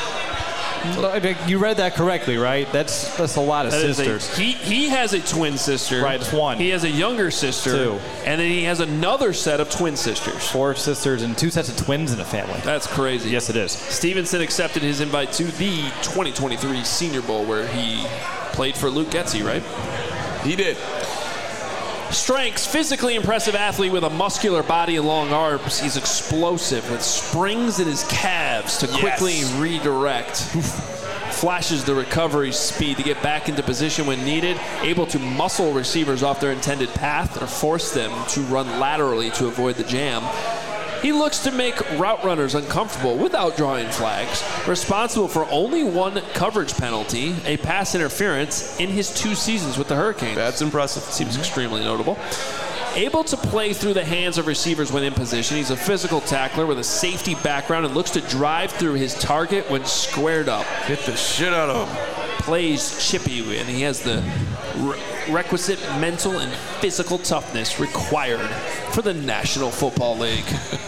You read that correctly, right? That's that's a lot of That is sisters. A, he, he has a twin sister. Right, it's one. He has a younger sister. Two. And then he has another set of twin sisters. Four sisters and two sets of twins in a family. That's crazy. Yes, it is. Stevenson accepted his invite to the twenty twenty-three Senior Bowl, where he played for Luke Getsy, right? He did. Strengths, physically impressive athlete with a muscular body and long arms. He's explosive with springs in his calves to quickly Yes. redirect. Flashes the recovery speed to get back into position when needed. Able to muscle receivers off their intended path or force them to run laterally to avoid the jam. He looks to make route runners uncomfortable without drawing flags. Responsible for only one coverage penalty, a pass interference, in his two seasons with the Hurricanes. That's impressive. Seems extremely notable. Able to play through the hands of receivers when in position. He's a physical tackler with a safety background and looks to drive through his target when squared up. Hit the shit out of him. Plays chippy, and he has the re- requisite mental and physical toughness required for the National Football League.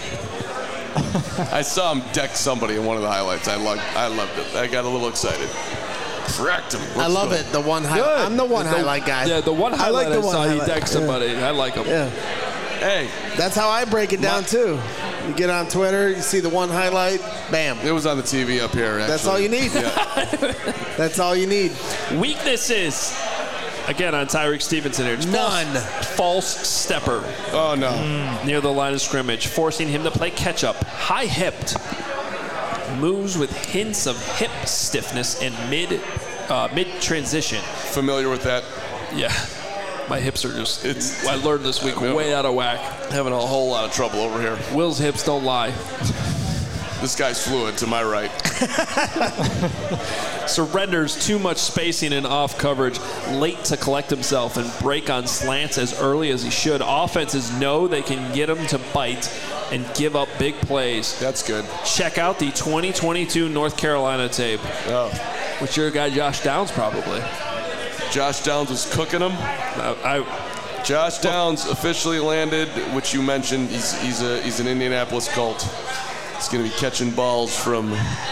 I saw him deck somebody in one of the highlights. I loved, I loved it. I got a little excited. Cracked him. I love good. it. The one highlight. I'm the one The- highlight guy. Yeah, the one I highlight I, like the one saw, highlight. he decked somebody. I like him. Yeah. Hey, That's how I break it down, too. You get on Twitter, you see the one highlight, bam. it was on the T V up here, actually. That's all you need. Yeah. That's all you need. Weaknesses. Again, on Tyreek Stevenson here. It's None. False, false stepper Oh, no. near the line of scrimmage, forcing him to play catch-up. High-hipped. Moves with hints of hip stiffness and mid, uh, mid-transition. Familiar with that? Yeah. My hips are just, It's- I learned this week, way out of whack. Having a whole lot of trouble over here. Will's hips don't lie. This guy's fluid to my right. Surrenders too much spacing and off coverage, late to collect himself and break on slants as early as he should. Offenses know they can get him to bite and give up big plays. That's good. Check out the twenty twenty-two North Carolina tape, Oh. which your guy Josh Downs probably. Josh Downs was cooking him. I, I Josh Downs officially landed, which you mentioned. He's he's a he's an Indianapolis Colt. He's going to be catching balls from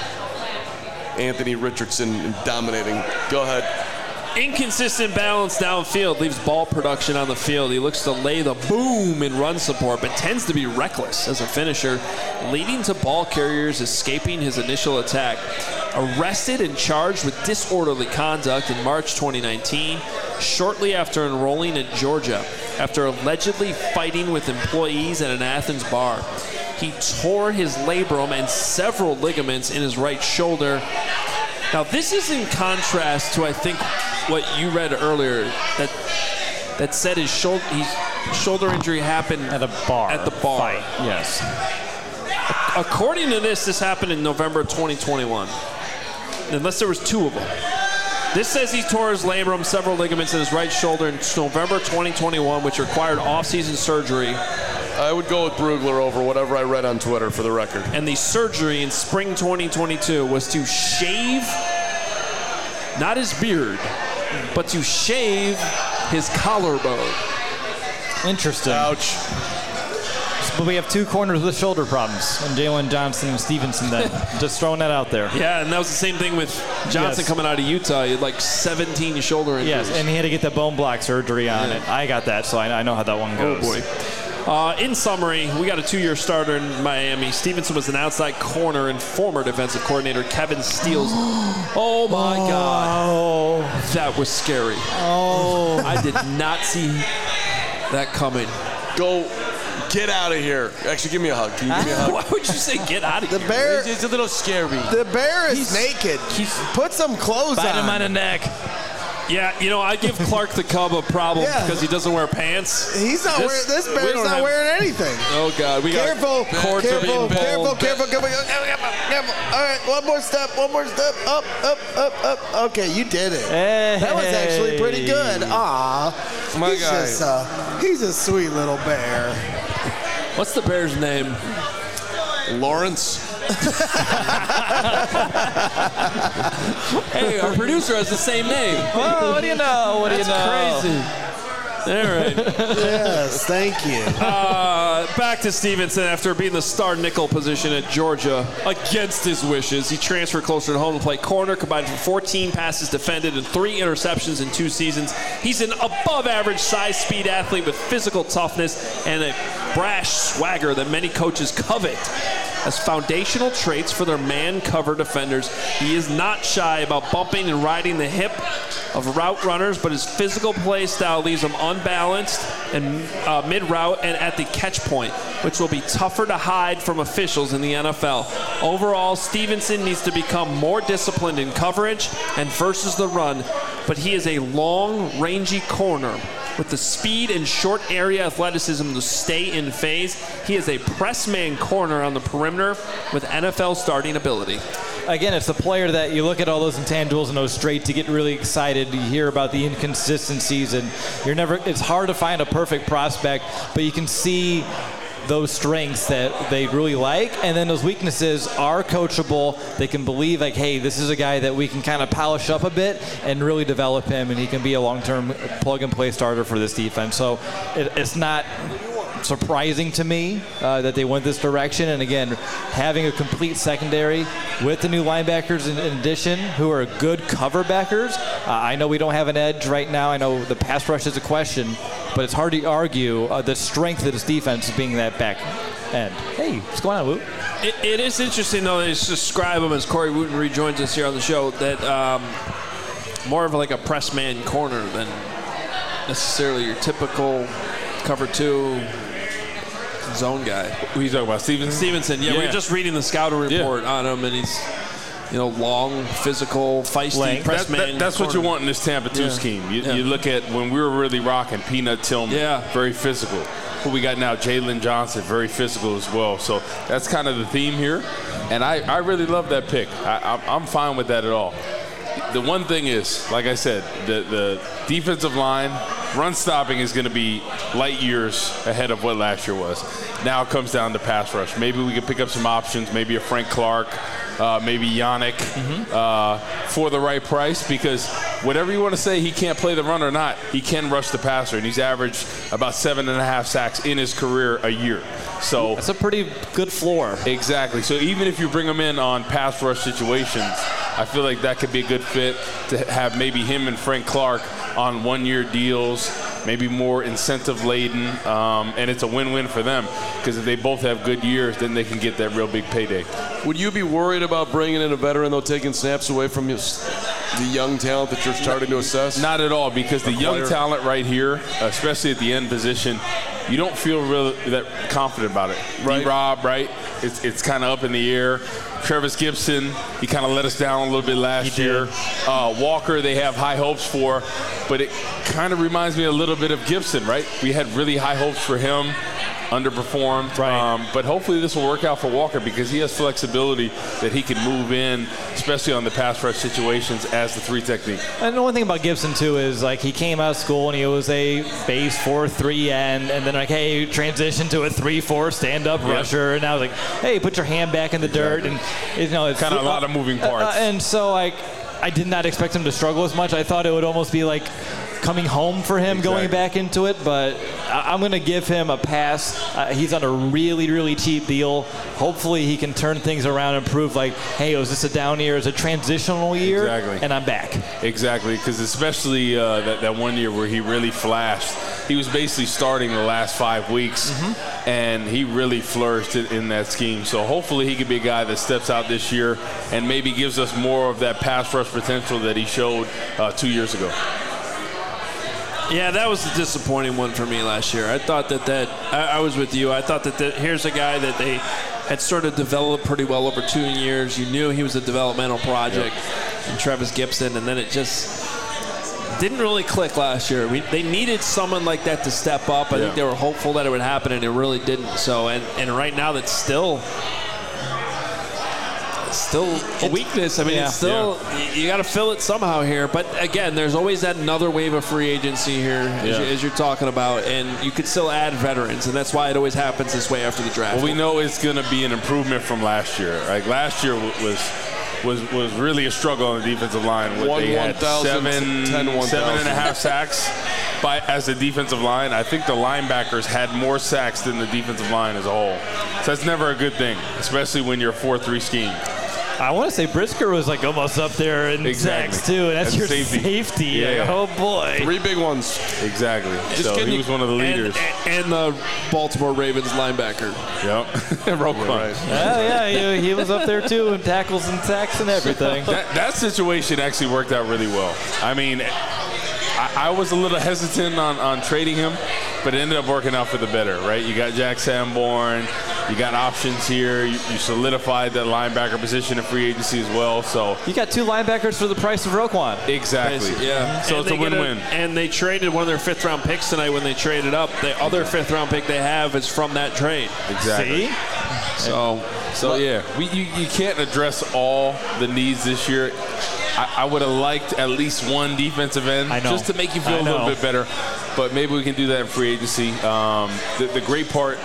Anthony Richardson and dominating. Go ahead. Inconsistent balance downfield leaves ball production on the field. He looks to lay the boom in run support, but tends to be reckless as a finisher, leading to ball carriers escaping his initial attack. Arrested and charged with disorderly conduct in March twenty nineteen, shortly after enrolling at Georgia, after allegedly fighting with employees at an Athens bar. He tore his labrum and several ligaments in his right shoulder. Now, this is in contrast to, I think, what you read earlier, that that said his shoulder, his shoulder injury happened at a bar. At the bar. Fight. Yes. According to this, this happened in November twenty twenty-one, unless there was two of them. This says he tore his labrum, several ligaments in his right shoulder in November twenty twenty-one, which required off-season surgery. I would go with Brugler over whatever I read on Twitter, for the record. And the surgery in spring twenty twenty-two was to shave, not his beard, but to shave his collarbone. Interesting. Ouch. But we have two corners with shoulder problems, and Jalen Johnson and Stevenson then. Just throwing that out there. Yeah, and that was the same thing with Johnson yes. coming out of Utah. He had like seventeen shoulder injuries. Yes, and he had to get the bone block surgery on yeah. it. I got that, so I, I know how that one goes. Oh, boy. Uh, in summary, we got a two-year starter in Miami. Stevenson was an outside corner and former defensive coordinator Kevin Steele's. Oh, my oh. God. That was scary. Oh. I did not see that coming. Go. Get out of here. Actually, give me a hug. Can you give me a hug? Why would you say get out of the here? Bear, it's, it's a little scary. The bear is he's, naked. He's, Put some clothes bite on. him on the neck. Yeah, you know, I give Clark the Cub a problem yeah. because he doesn't wear pants. He's not this, wearing, this bear's not have, wearing anything. Oh, God. We careful, got cords careful, are being careful, pulled. careful, careful, careful, careful. All right, one more step, one more step. Up, up, up, up. Okay, you did it. Hey. That was actually pretty good. Aw. My he's guy. Just, uh, he's a sweet little bear. What's the bear's name? Lawrence. Hey, our producer has the same name. Oh, what do you know? What do That's you know? crazy. All right. Yes, thank you. Uh, back to Stevenson after being the star nickel position at Georgia against his wishes. He transferred closer to home to play corner, combined for fourteen passes defended and three interceptions in two seasons. He's an above-average size speed athlete with physical toughness and a brash swagger that many coaches covet as foundational traits for their man-cover defenders. He is not shy about bumping and riding the hip of route runners, but his physical play style leaves him unbalanced and uh, mid-route and at the catch point, which will be tougher to hide from officials in the N F L. Overall, Stevenson needs to become more disciplined in coverage and versus the run, but he is a long, rangy corner with the speed and short area athleticism to stay in phase. He is a press man corner on the perimeter with N F L starting ability. Again, it's a player that you look at all those intangibles and those traits to get really excited. You hear about the inconsistencies, and you're never. It's hard to find a perfect prospect, but you can see those strengths that they really like, and then those weaknesses are coachable. They can believe, like, hey, this is a guy that we can kind of polish up a bit and really develop him, and he can be a long-term plug-and-play starter for this defense. So it, it's not surprising to me uh, that they went this direction. And again, having a complete secondary with the new linebackers in, in addition, who are good cover backers. Uh, I know we don't have an edge right now. I know the pass rush is a question, but it's hard to argue uh, the strength of this defense being that back end. Hey, what's going on, Woot? It, it is interesting, though, to describe him as Corey Wooten rejoins us here on the show, that um, more of like a press man corner than necessarily your typical cover two zone guy. Who are you talking about, Stevenson? Stevenson, yeah, yeah. We were just reading the scouting report yeah. on him, and he's, you know, long, physical, feisty, Length. press that, man. That, that's corner. what you want in this Tampa two yeah. scheme. You, yeah. you look at when we were really rocking Peanut Tillman, yeah. very physical. Who we got now, Jalen Johnson, very physical as well. So that's kind of the theme here, and I, I really love that pick. I, I'm fine with that at all. The one thing is, like I said, the, the defensive line, run stopping is going to be light years ahead of what last year was. Now it comes down to pass rush. Maybe we can pick up some options, maybe a Frank Clark, uh, maybe Yannick, mm-hmm. uh, for the right price, because whatever you want to say, he can't play the run or not, he can rush the passer, and he's averaged about seven and a half sacks in his career a year. So that's a pretty good floor. Exactly. So even if you bring him in on pass rush situations, I feel like that could be a good fit to have maybe him and Frank Clark on one-year deals, maybe more incentive-laden, um, and it's a win-win for them, because if they both have good years, then they can get that real big payday. Would you be worried about bringing in a veteran, though, taking snaps away from his, the young talent that you're starting to assess? Not at all, because the Acquire. young talent right here, especially at the end position, you don't feel really that confident about it. Right. D-Rob, right? It's, it's kind of up in the air. Travis Gibson, he kind of let us down a little bit last year. Uh, Walker, they have high hopes for, but it kind of reminds me a little bit of Gibson, right? We had really high hopes for him, underperformed. Right. Um, but hopefully this will work out for Walker, because he has flexibility that he can move in, especially on the pass rush situations, as the three technique. And the one thing about Gibson, too, is like he came out of school and he was a base four three end, and then like, hey, transition to a three four stand-up Yep. rusher, and now like, hey, put your hand back in the dirt, and you know, it's Kind of a lot of moving parts. Uh, and so like, I did not expect him to struggle as much. I thought it would almost be like coming home for him, Exactly. going back into it, but I- I'm going to give him a pass. Uh, he's on a really, really cheap deal. Hopefully he can turn things around and prove like, hey, was this a down year? Is it a transitional year? Exactly. And I'm back. Exactly, because especially uh, that, that one year where he really flashed, he was basically starting the last five weeks, mm-hmm. and he really flourished in, in that scheme. So hopefully he could be a guy that steps out this year and maybe gives us more of that pass rush potential that he showed uh, two years ago. Yeah, that was a disappointing one for me last year. I thought that that I, I was with you. I thought that, that here's a guy that they had sort of developed pretty well over two years. You knew he was a developmental project, yep. and Travis Gibson, and then it just didn't really click last year. We, they needed someone like that to step up. I yeah. think they were hopeful that it would happen, and it really didn't. So, and, and right now that's still still a weakness. I mean, yeah. it's still, yeah. you, you got to fill it somehow here. But again, there's always that another wave of free agency here, as, yeah. you, as you're talking about, and you could still add veterans, and that's why it always happens this way after the draft. Well, we know it's going to be an improvement from last year. Like last year was was was really a struggle on the defensive line. What, One, they had seven, ten, one, seven and a half sacks by as a defensive line. I think the linebackers had more sacks than the defensive line as a whole. So that's never a good thing, especially when you're a four three scheme. I want to say Brisker was like almost up there in Exactly. sacks too, and that's, That's your safety. safety. Yeah, Like, yeah. oh boy. Three big ones. Exactly. Just so can he you- was one of the leaders. And, and the Baltimore Ravens linebacker. Yep. Roquan. Right. Oh yeah, he, he was up there too in tackles and sacks and everything. That, that situation actually worked out really well. I mean, I, I was a little hesitant on, on trading him, but it ended up working out for the better, right? You got Jack Sanborn. You got options here. You, you solidified that linebacker position in free agency as well. So You got two linebackers for the price of Roquan. exactly. Yeah. So And it's a they get win-win. and they traded one of their fifth round picks tonight when they traded up. The other fifth round pick they have is from that trade. Exactly. See? So, so yeah, we, you, you can't address all the needs this year. I, I would have liked at least one defensive end I know. just to make you feel I a little know. bit better. But maybe we can do that in free agency. Um, the, the great part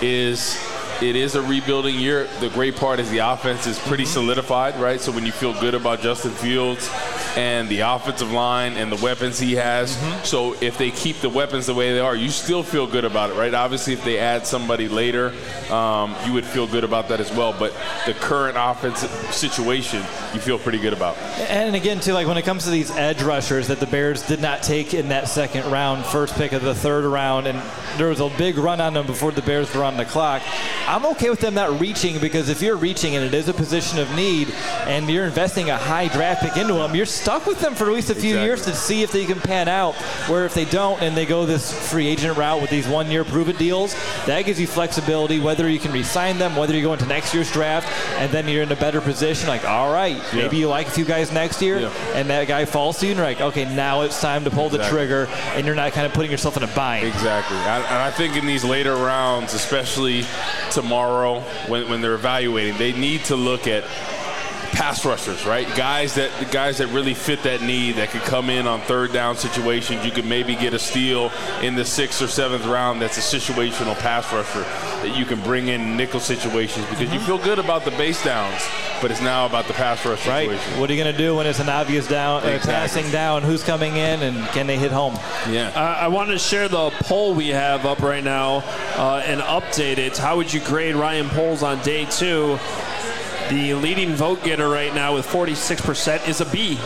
is it is a rebuilding year. The great part is the offense is pretty solidified, right? So when you feel good about Justin Fields and the offensive line and the weapons he has, so if they keep the weapons the way they are, you still feel good about it, right? Obviously, if they add somebody later, um, you would feel good about that as well. But the current offensive situation, you feel pretty good about. And again, too, like when it comes to these edge rushers that the Bears did not take in that second round, first pick of the third round, and there was a big run on them before the Bears were on the clock. I'm okay with them not reaching, because if you're reaching and it is a position of need and you're investing a high draft pick into them, you're stuck with them for at least a few Exactly. years to see if they can pan out. Where if they don't and they go this free agent route with these one-year prove-it deals, that gives you flexibility, whether you can re-sign them, whether you go into next year's draft, and then you're in a better position. Like, all right, maybe Yeah. you like a few guys next year, Yeah. and that guy falls to you, and you're like, okay, now it's time to pull the Exactly. trigger, and you're not kind of putting yourself in a bind. Exactly. I, and I think in these later rounds, especially tomorrow when, when they're evaluating, they need to look at pass rushers, right? Guys that the guys that really fit that need, that could come in on third down situations. You could maybe get a steal in the sixth or seventh round. That's a situational pass rusher that you can bring in nickel situations because mm-hmm. you feel good about the base downs, but it's now about the pass rush situation. Right. What are you going to do when it's an obvious down, exactly. uh, passing down? Who's coming in, and can they hit home? Yeah. Uh, I wanted to share the poll we have up right now uh, and update it. How would you grade Ryan Poles on day two? The leading vote getter right now with forty-six percent is a B.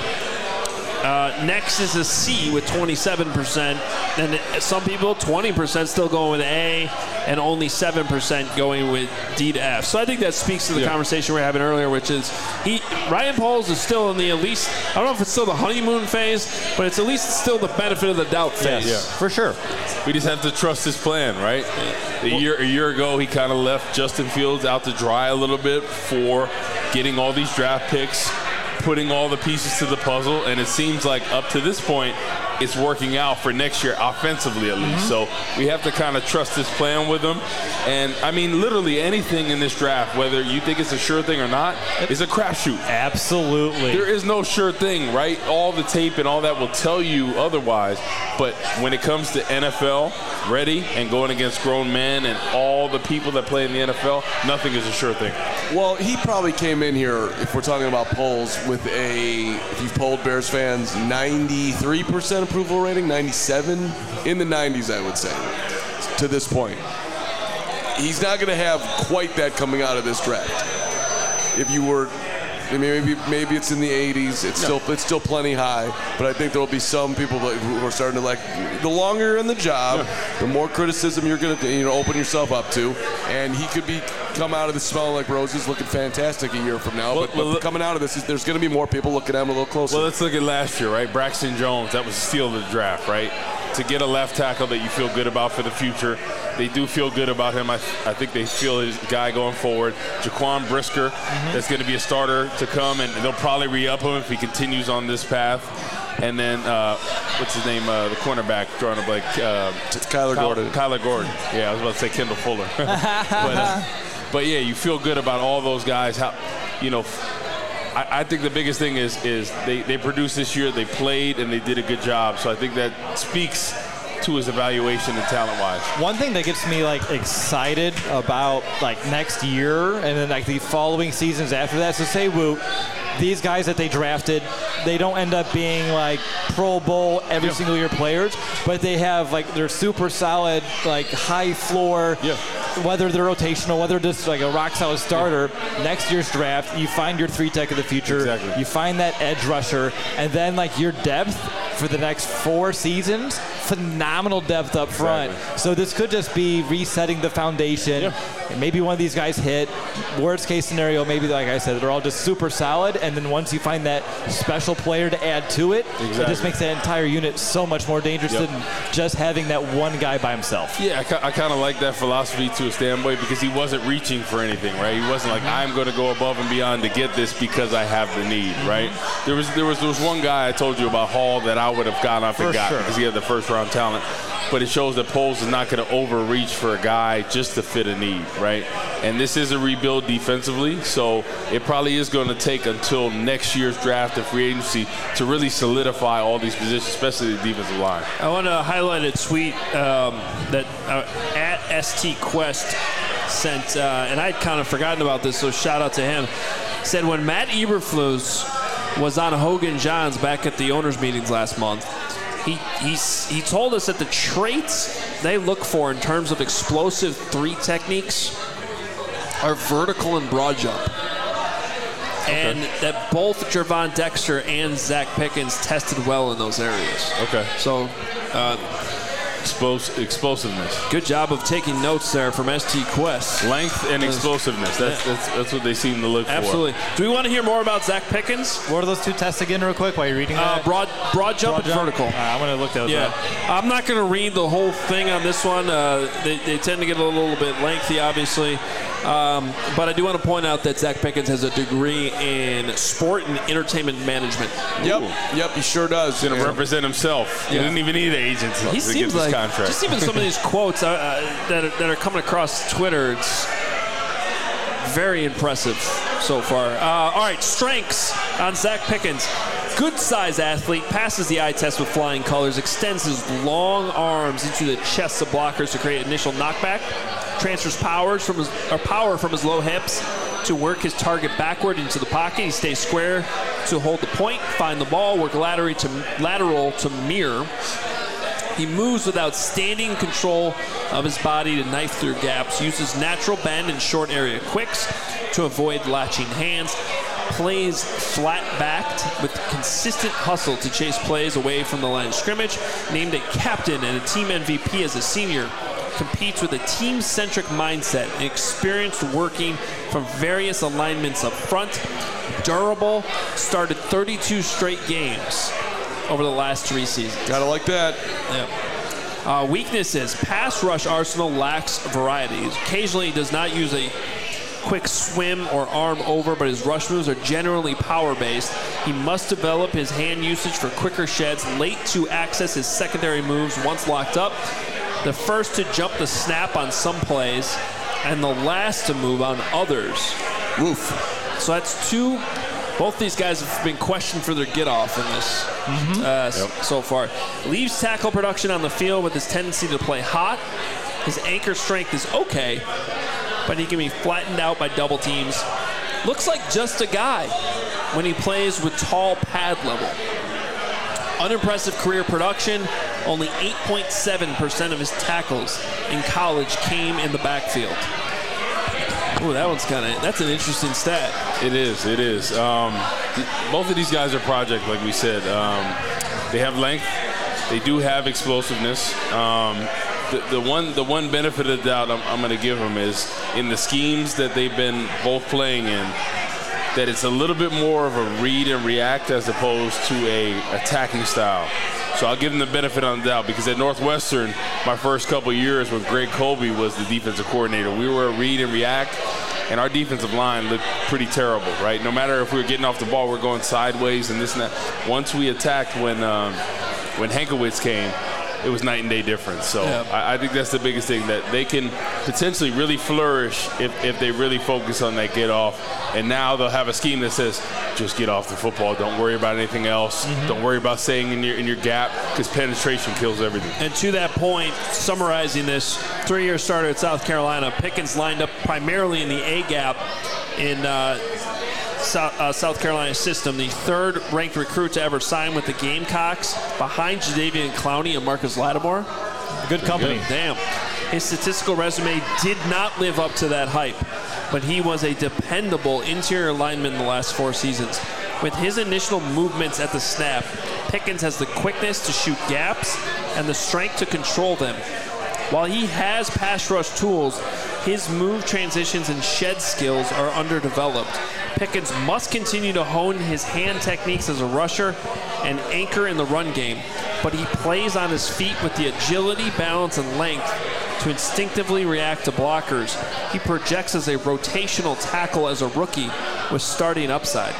Uh, next is a C with twenty-seven percent. And some people, twenty percent still going with A, and only seven percent going with D to F. So I think that speaks to the yeah. conversation we were having earlier, which is he Ryan Poles is still in the at least, I don't know if it's still the honeymoon phase, but it's at least still the benefit of the doubt phase. Yes, yeah. For sure. We just have to trust his plan, right? A year, a year ago, he kind of left Justin Fields out to dry a little bit for getting all these draft picks, putting all the pieces to the puzzle, and it seems like up to this point, it's working out for next year, offensively at least. Mm-hmm. So we have to kind of trust this plan with him. And, I mean, literally anything in this draft, whether you think it's a sure thing or not, is a crapshoot. Absolutely. There is no sure thing, right? All the tape and all that will tell you otherwise. But when it comes to N F L ready and going against grown men and all the people that play in the N F L, nothing is a sure thing. Well, he probably came in here, if we're talking about polls, with a, if you've polled Bears fans, ninety-three percent approval rating, ninety-seven, in the nineties, I would say, to this point. He's not going to have quite that coming out of this draft. If you were, I mean, maybe maybe it's in the eighties. It's no. still it's still plenty high, but I think there will be some people that, who are starting to like. The longer you're in the job, yeah. the more criticism you're going to you know open yourself up to, and he could be come out of this smelling like roses, looking fantastic a year from now. Well, but, well, but coming out of this, there's going to be more people looking at him a little closer. Well, let's look at last year, right? Braxton Jones, that was a steal of the draft, right? To get a left tackle that you feel good about for the future. They do feel good about him. I, I think they feel his guy going forward. Jaquan Brisker, mm-hmm. that's going to be a starter to come, and they'll probably re-up him if he continues on this path. And then, uh, what's his name, uh, the cornerback, drawing a blank. Uh, Kyler Kyle, Gordon. Kyler Gordon. Yeah, I was about to say Kendall Fuller. but, uh, but, yeah, you feel good about all those guys. How, you know, I, I think the biggest thing is is they, they produced this year, they played, and they did a good job. So I think that speaks to his evaluation and talent-wise. One thing that gets me like excited about like next year and then like the following seasons after that. So say Woo, these guys that they drafted, they don't end up being like Pro Bowl every yeah. single year players, but they have like they're super solid, like high floor. Yeah. Whether they're rotational, whether they're just like a rock solid starter, yeah. next year's draft, you find your three tech of the future. Exactly. You find that edge rusher, and then like your depth for the next four seasons, phenomenal depth up front. Exactly. So this could just be resetting the foundation. Yeah. And maybe one of these guys hit. Worst case scenario, maybe like I said, they're all just super solid. And then once you find that special player to add to it, exactly. it just makes that entire unit so much more dangerous yep. than just having that one guy by himself. Yeah, I, I kind of like that philosophy to a standpoint because he wasn't reaching for anything, right? He wasn't like, I'm going to go above and beyond to get this because I have the need, right? There was there was there was one guy I told you about, Hall, that I would have gone off and got because he had the first round talent. But it shows that Poles is not going to overreach for a guy just to fit a need, right? And this is a rebuild defensively, so it probably is going to take until next year's draft and free agency to really solidify all these positions, especially the defensive line. I want to highlight a tweet um, that uh, at S T Quest sent, uh, and I'd kind of forgotten about this, so shout out to him. Said when Matt Eberflus was on Hogan Johns back at the owners' meetings last month, He he's, he told us that the traits they look for in terms of explosive three techniques are vertical and broad jump. Okay. And that both Gervon Dexter and Zach Pickens tested well in those areas. Okay. So, uh, Explos- explosiveness. Good job of taking notes there from S T Quest. Length and explosiveness. That's, yeah. that's that's what they seem to look Absolutely. for. Absolutely. Do we want to hear more about Zach Pickens? What are those two tests again real quick while you're reading uh, that? Broad, broad jump broad and jump? vertical. Uh, I'm going to look those yeah. up. I'm not going to read the whole thing on this one. Uh, they, they tend to get a little bit lengthy, obviously. Um, but I do want to point out that Zach Pickens has a degree in sport and entertainment management. Yep, Ooh. yep, he sure does. He's going to yeah. represent himself. Yeah. He didn't even need an agent to, he to seems get like, this contract. Just even some of these quotes uh, uh, that, are, that are coming across Twitter, it's, very impressive so far. Uh, all right, strengths on Zacch Pickens. Good size athlete, passes the eye test with flying colors, extends his long arms into the chests of blockers to create initial knockback, transfers powers from his, or power from his low hips to work his target backward into the pocket. He stays square to hold the point, find the ball, work lateral to, lateral to mirror. He moves with outstanding control of his body to knife through gaps, uses natural bend and short area quicks to avoid latching hands, plays flat-backed with consistent hustle to chase plays away from the line of scrimmage, named a captain and a team M V P as a senior, competes with a team-centric mindset and experience working from various alignments up front, durable, started thirty-two straight games over the last three seasons. Gotta like that. Yeah. Uh, weaknesses. Pass rush arsenal lacks variety. Occasionally he does not use a quick swim or arm over, but his rush moves are generally power-based. He must develop his hand usage for quicker sheds, late to access his secondary moves once locked up, the first to jump the snap on some plays, and the last to move on others. Oof. So that's two. Both these guys have been questioned for their get-off in this mm-hmm. uh, yep. so far. Leaves tackle production on the field with his tendency to play hot. His anchor strength is okay, but he can be flattened out by double teams. Looks like just a guy when he plays with tall pad level. Unimpressive career production. Only eight point seven percent of his tackles in college came in the backfield. Ooh, that one's kind of, that's an interesting stat. It is, it is. Um, th- both of these guys are project, like we said. Um, they have length. They do have explosiveness. Um, the, the one the one benefit of the doubt I'm, I'm going to give them is in the schemes that they've been both playing in, that it's a little bit more of a read and react as opposed to a attacking style. So I'll give them the benefit on the doubt because at Northwestern, my first couple years with Greg Colby was the defensive coordinator. We were a read and react, and our defensive line looked pretty terrible, right? No matter if we were getting off the ball, we're going sideways and this and that. Once we attacked when um, when Hankowitz came, it was night and day difference. So yeah. I, I think that's the biggest thing, that they can potentially really flourish if, if they really focus on that get off. And now they'll have a scheme that says, just get off the football. Don't worry about anything else. Mm-hmm. Don't worry about staying in your in your gap, because penetration kills everything. And to that point, summarizing this, three-year starter at South Carolina, Pickens lined up primarily in the A-gap in uh, South, uh, South Carolina system, the third-ranked recruit to ever sign with the Gamecocks, behind Jadeveon Clowney and Marcus Lattimore. Good company. Good. Damn. His statistical resume did not live up to that hype, but he was a dependable interior lineman in the last four seasons. With his initial movements at the snap, Pickens has the quickness to shoot gaps and the strength to control them. While he has pass rush tools, his move transitions and shed skills are underdeveloped. Pickens must continue to hone his hand techniques as a rusher and anchor in the run game, but he plays on his feet with the agility, balance, and length to instinctively react to blockers. He projects as a rotational tackle as a rookie with starting upside.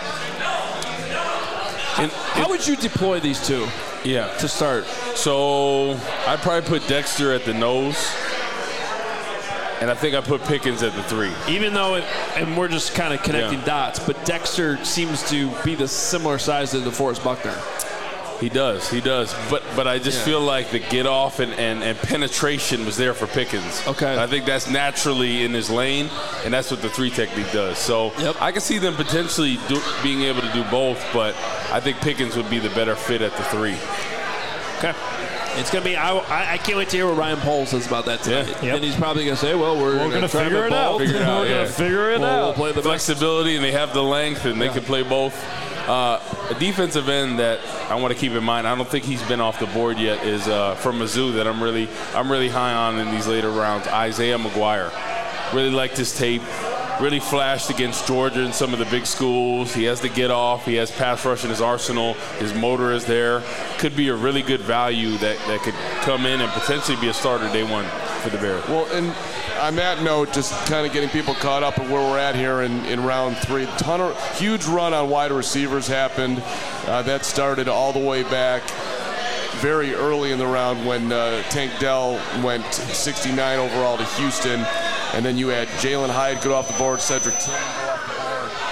And how would you deploy these two? Yeah. To start. So I'd probably put Dexter at the nose, and I think I put Pickens at the three. Even though, it, and we're just kind of connecting yeah. dots, but Dexter seems to be the similar size to DeForest Buckner. He does, he does. But but I just yeah. feel like the get off and, and, and penetration was there for Pickens. Okay. And I think that's naturally in his lane, and that's what the three technique does. So yep. I can see them potentially do, being able to do both, but I think Pickens would be the better fit at the three. Okay. It's going to be, I, I can't wait to hear what Ryan Poles says about that tonight. Yeah. Yep. And he's probably going to say, well, we're, we're going to figure it out. Figure it out. We're yeah. going to figure it we'll, out. We'll play the flexibility, and they have the length, and they yeah. can play both. Uh, a defensive end that I want to keep in mind, I don't think he's been off the board yet, is uh, from Mizzou that I'm really I'm really high on in these later rounds, Isaiah McGuire. Really liked his tape. Really flashed against Georgia and some of the big schools. He has the get off. He has pass rush in his arsenal. His motor is there. Could be a really good value that, that could come in and potentially be a starter day one for the Bears. Well, and on that note, just kind of getting people caught up at where we're at here in, in round three. Ton of, huge run on wide receivers happened. Uh, that started all the way back very early in the round when uh, Tank Dell went sixty-nine overall to Houston. And then you had Jalen Hyde go off the board, Cedric Tillman go off the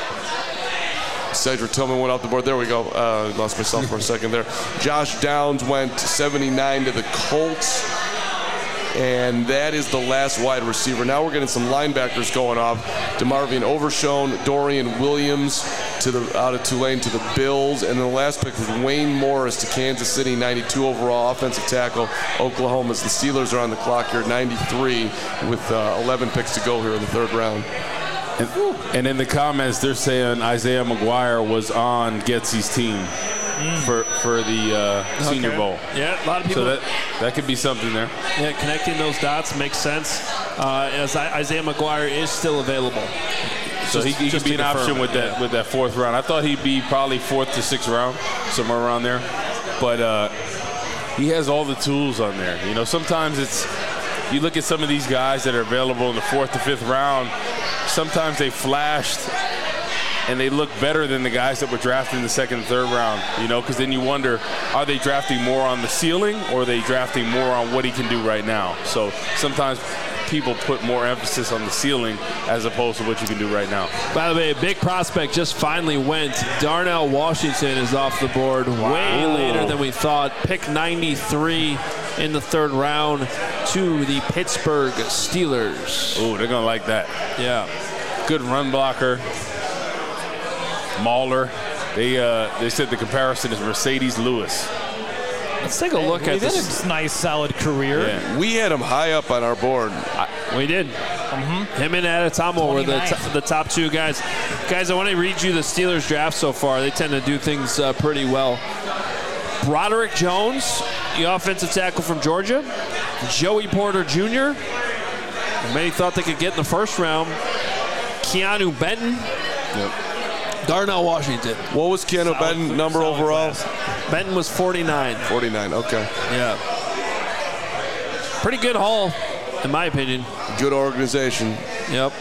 board. Cedric Tillman went off the board. There we go. Uh, lost myself for a second there. Josh Downs went seventy-nine to the Colts. And that is the last wide receiver. Now we're getting some linebackers going off. DeMarvion Overshone, Dorian Williams to the out of Tulane to the Bills. And then the last pick was Wayne Morris to Kansas City, ninety-two overall offensive tackle. Oklahoma's the Steelers are on the clock here, ninety-three with uh, eleven picks to go here in the third round. And, and in the comments, they're saying Isaiah McGuire was on Getsy's team mm. for for the uh, okay. Senior Bowl. Yeah, a lot of people. So that that could be something there. Yeah, connecting those dots makes sense. Uh, as Isaiah McGuire is still available, so just, he, he could be an option it, with that yeah. with that fourth round. I thought he'd be probably fourth to sixth round, somewhere around there. But uh, he has all the tools on there. You know, sometimes it's you look at some of these guys that are available in the fourth to fifth round. Sometimes they flashed and they look better than the guys that were drafted in the second and third round, you know, because then you wonder, are they drafting more on the ceiling or are they drafting more on what he can do right now? So sometimes people put more emphasis on the ceiling as opposed to what you can do right now. By the way, a big prospect just finally went. Darnell Washington is off the board wow. way later than we thought. Pick ninety-three in the third round to the Pittsburgh Steelers. Oh, they're going to like that. Yeah. Good run blocker. Mauler. They uh, they said the comparison is Mercedes Lewis. Let's take a look hey, at this. Had a nice, solid career. Yeah. We had him high up on our board. I, we did. Mm-hmm. Him and Adetomo were the, t- the top two guys. Guys, I want to read you the Steelers draft so far. They tend to do things uh, pretty well. Broderick Jones, the offensive tackle from Georgia. Joey Porter Junior Many thought they could get in the first round. Keanu Benton. Yep. Darnell Washington. What was Keanu solid, Benton number overall? Class. Benton was forty-nine. forty-nine, okay. Yeah. Pretty good haul, in my opinion. Good organization. Yep.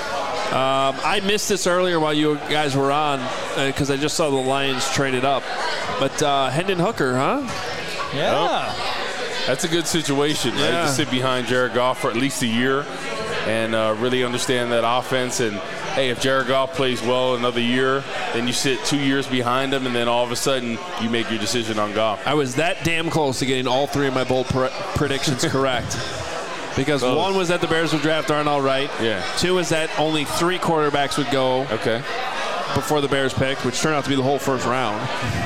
Um, I missed this earlier while you guys were on because uh, I just saw the Lions traded up. But uh, Hendon Hooker, huh? Yeah. Oh, that's a good situation, right? Yeah. To sit behind Jared Goff for at least a year and uh, really understand that offense. And, hey, if Jared Goff plays well another year, then you sit two years behind him, and then all of a sudden you make your decision on Goff. I was that damn close to getting all three of my bold pre- predictions correct. Because close. One was that the Bears would draft Darnell Wright. Yeah. Two was that only three quarterbacks would go. Okay. Before the Bears picked, which turned out to be the whole first round.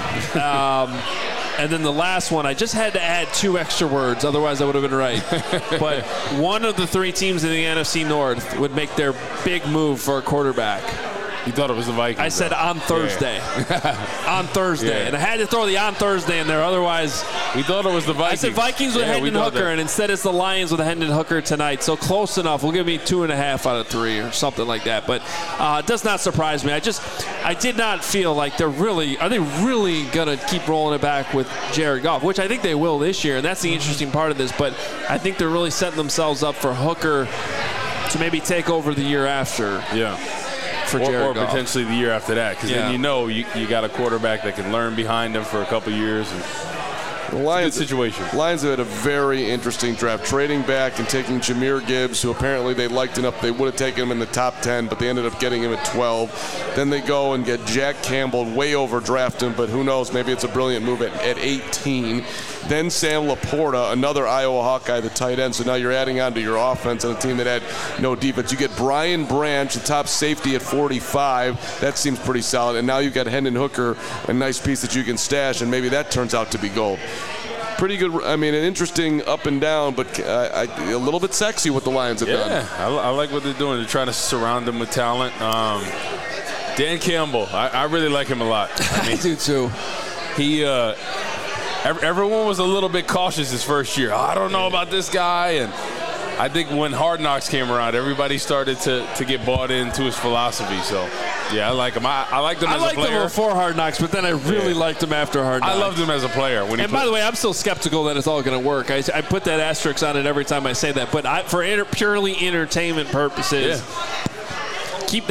um, and then the last one, I just had to add two extra words, otherwise I would have been right. But one of the three teams in the N F C North would make their big move for a quarterback. You thought it was the Vikings. I said on Thursday. Yeah. on Thursday. Yeah. And I had to throw the on Thursday in there, otherwise. We thought it was the Vikings. I said Vikings with yeah, Hendon Hooker, and instead it's the Lions with Hendon Hooker tonight. So close enough. We'll give me two and a half out of three or something like that. But uh, it does not surprise me. I just, I did not feel like they're really, are they really going to keep rolling it back with Jared Goff, which I think they will this year, and that's the interesting part of this. But I think they're really setting themselves up for Hooker to maybe take over the year after. Yeah. For or, Jared or Goff. Potentially the year after that, because yeah. then you know you, you got a quarterback that can learn behind him for a couple years. And the Lions, good situation. Lions have had a very interesting draft, trading back and taking Jahmyr Gibbs, who apparently they liked enough they would have taken him in the top ten, but they ended up getting him at twelve. Then they go and get Jack Campbell, way overdraft him, but who knows, maybe it's a brilliant move at, at eighteen. Then Sam Laporta, another Iowa Hawkeye, the tight end. So now you're adding on to your offense on a team that had no defense. You get Brian Branch, the top safety at forty-five. That seems pretty solid. And now you've got Hendon Hooker, a nice piece that you can stash, and maybe that turns out to be gold. Pretty good. I mean, an interesting up and down, but uh, I, a little bit sexy what the Lions have yeah, done. Yeah, I, I like what they're doing. They're trying to surround them with talent. Um, Dan Campbell, I, I really like him a lot. I, mean, I do too. He, uh, everyone was a little bit cautious his first year. I don't know about this guy, and I think when Hard Knocks came around, everybody started to, to get bought into his philosophy. So, yeah, I like him. I, I liked him I as liked a player. him before Hard Knocks, but then I really yeah. liked him after Hard Knocks. I loved him as a player. When he and played. by the way, I'm still skeptical that it's all going to work. I, I put that asterisk on it every time I say that. But I, for inter, purely entertainment purposes, yeah. keep that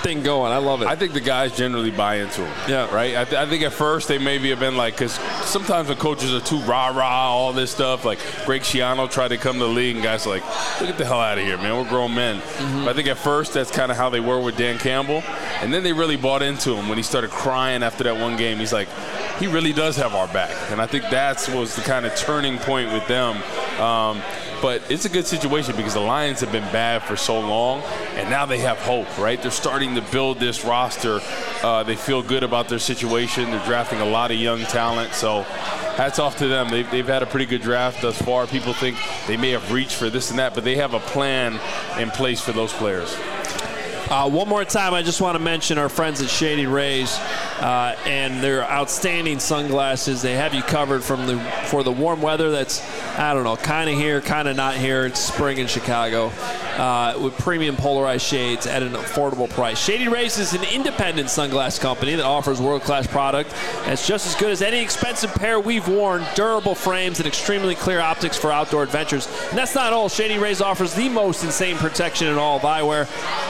thing going. I love it. I think the guys generally buy into them. Yeah. Right? I, th- I think at first they maybe have been like, because sometimes when coaches are too rah-rah, all this stuff, like Greg Schiano tried to come to the league, and guys are like, look, get the hell out of here, man. We're grown men. Mm-hmm. But I think at first that's kind of how they were with Dan Campbell. And then they really bought into him when he started crying after that one game. He's like, he really does have our back. And I think that was the kind of turning point with them. Um, But it's a good situation because the Lions have been bad for so long, and now they have hope, right? They're starting to build this roster. Uh, they feel good about their situation. They're drafting a lot of young talent. So hats off to them. They've, they've had a pretty good draft thus far. People think they may have reached for this and that, but they have a plan in place for those players. Uh, one more time, I just want to mention our friends at Shady Rays uh, and their outstanding sunglasses. They have you covered from the for the warm weather that's, I don't know, kind of here, kind of not here. It's spring in Chicago uh, with premium polarized shades at an affordable price. Shady Rays is an independent sunglass company that offers world-class product that's just as good as any expensive pair we've worn, durable frames, and extremely clear optics for outdoor adventures. And that's not all. Shady Rays offers the most insane protection in all of eyewear,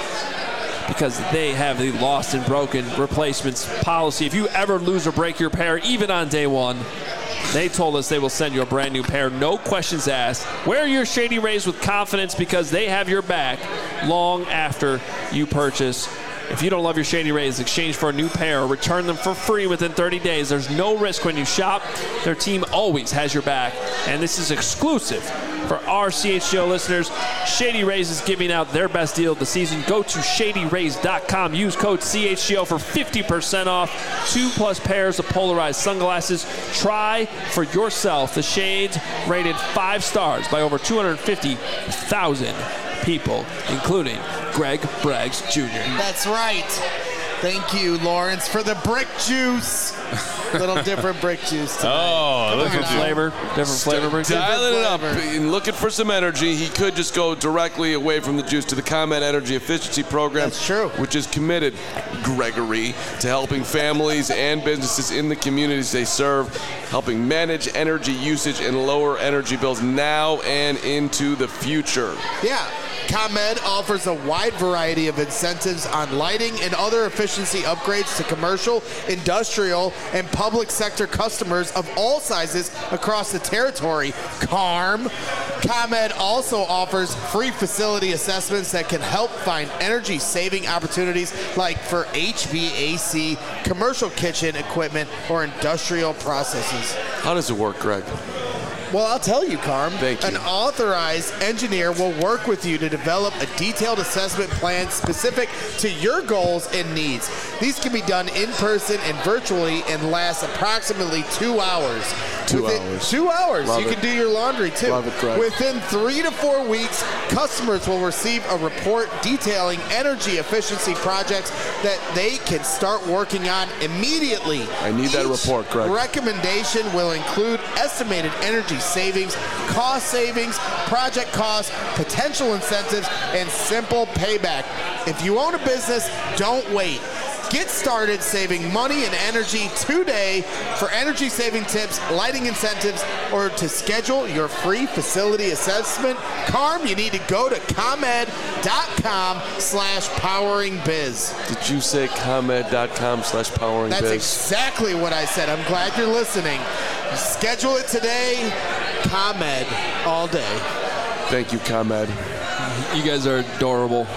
because they have the lost and broken replacements policy. If you ever lose or break your pair, even on day one, they told us they will send you a brand new pair, no questions asked. Wear your Shady Rays with confidence because they have your back long after you purchase. If you don't love your Shady Rays, exchange for a new pair or return them for free within thirty days. There's no risk when you shop. Their team always has your back, and this is exclusive for our C H G O listeners. Shady Rays is giving out their best deal of the season. Go to shady rays dot com. Use code C H G O for fifty percent off. Two plus pairs of polarized sunglasses. Try for yourself the shades rated five stars by over two hundred fifty thousand people, including Greg Braggs Junior That's right. Thank you, Lawrence, for the brick juice. A little different brick juice tonight. Oh, look Different at you. flavor. Different flavor. Brick juice. Dialing it up flavor. and looking for some energy. He could just go directly away from the juice to the ComEd Energy Efficiency Program. That's true. Which is committed, Gregory, to helping families and businesses in the communities they serve, helping manage energy usage and lower energy bills now and into the future. Yeah. ComEd offers a wide variety of incentives on lighting and other efficiency upgrades to commercial, industrial, and public sector customers of all sizes across the territory. Carm. ComEd also offers free facility assessments that can help find energy-saving opportunities like for H V A C, commercial kitchen equipment, or industrial processes. How does it work, Greg? Well, I'll tell you, Carm. Thank you. An authorized engineer will work with you to develop a detailed assessment plan specific to your goals and needs. These can be done in person and virtually and last approximately two hours. Two Within, hours. Two hours. Love you it. can do your laundry, too. Love it, Greg. Within three to four weeks, customers will receive a report detailing energy efficiency projects that they can start working on immediately. I need that Each report, Greg. recommendation will include estimated energy savings, cost savings, project costs, potential incentives, and simple payback. If you own a business, don't wait. Get started saving money and energy today. For energy saving tips, lighting incentives, or to schedule your free facility assessment, Carm, you need to go to ComEd.com slash powering biz. Did you say ComEd.com slash powering That's biz? exactly what I said. I'm glad you're listening. Schedule it today. ComEd all day. Thank you, ComEd. You guys are adorable.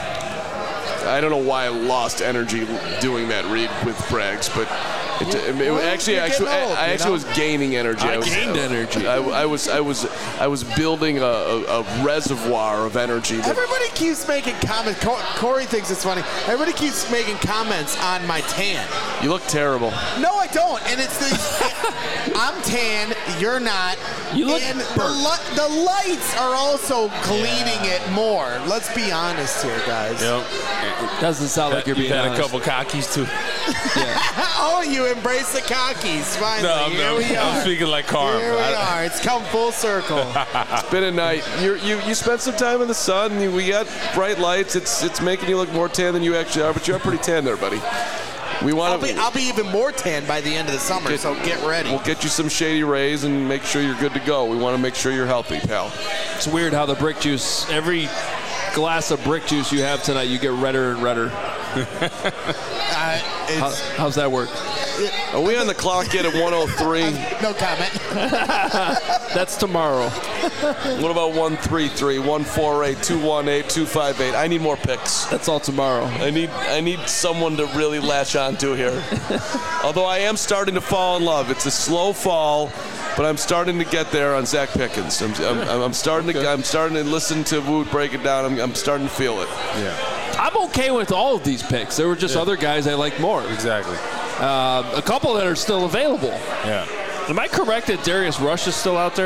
I don't know why I lost energy doing that read with Braggs, but it, it, it, Well, actually, you're actually, getting old, I, I you actually know? was gaining energy. I was, gained energy. I, I was, I was, I was building a, a, a reservoir of energy. That, Everybody keeps making comments. Co- Corey thinks it's funny. Everybody keeps making comments on my tan. you look terrible. No, I don't. And it's the I'm tan. You're not. You look and the, burnt. li- the lights are also cleaning it more. Let's be honest here, guys. Yep. Doesn't sound like you're You've being had honest. a couple cockies, too. Oh, you embrace the cockies. Finally, No, I'm, here I'm, we I'm are. speaking like Carm. Here we I- are. It's come full circle. It's been a night. You're, you you spent some time in the sun. You, we got bright lights. It's it's making you look more tan than you actually are, but you are pretty tan there, buddy. We I'll want be, to. I'll be even more tan by the end of the summer, Get- so get ready. We'll get you some Shady Rays and make sure you're good to go. We want to make sure you're healthy, pal. It's weird how the brick juice, every glass of brick juice you have tonight, you get redder and redder. uh, it's, How, how's that work? Are we on the clock yet at one oh three? No comment. That's tomorrow. What about one three three, one four eight, two one eight, two five eight? I need more picks. That's all tomorrow. I need I need someone to really latch onto here. Although I am starting to fall in love. It's a slow fall, but I'm starting to get there on Zach Pickens. I'm, I'm, I'm starting to I'm starting to listen to Woot break it down. I'm, I'm starting to feel it. Yeah. I'm okay with all of these picks. There were just Yeah. other guys I like more. Exactly. Uh, a couple that are still available. Yeah. Am I correct that Darius Rush is still out there?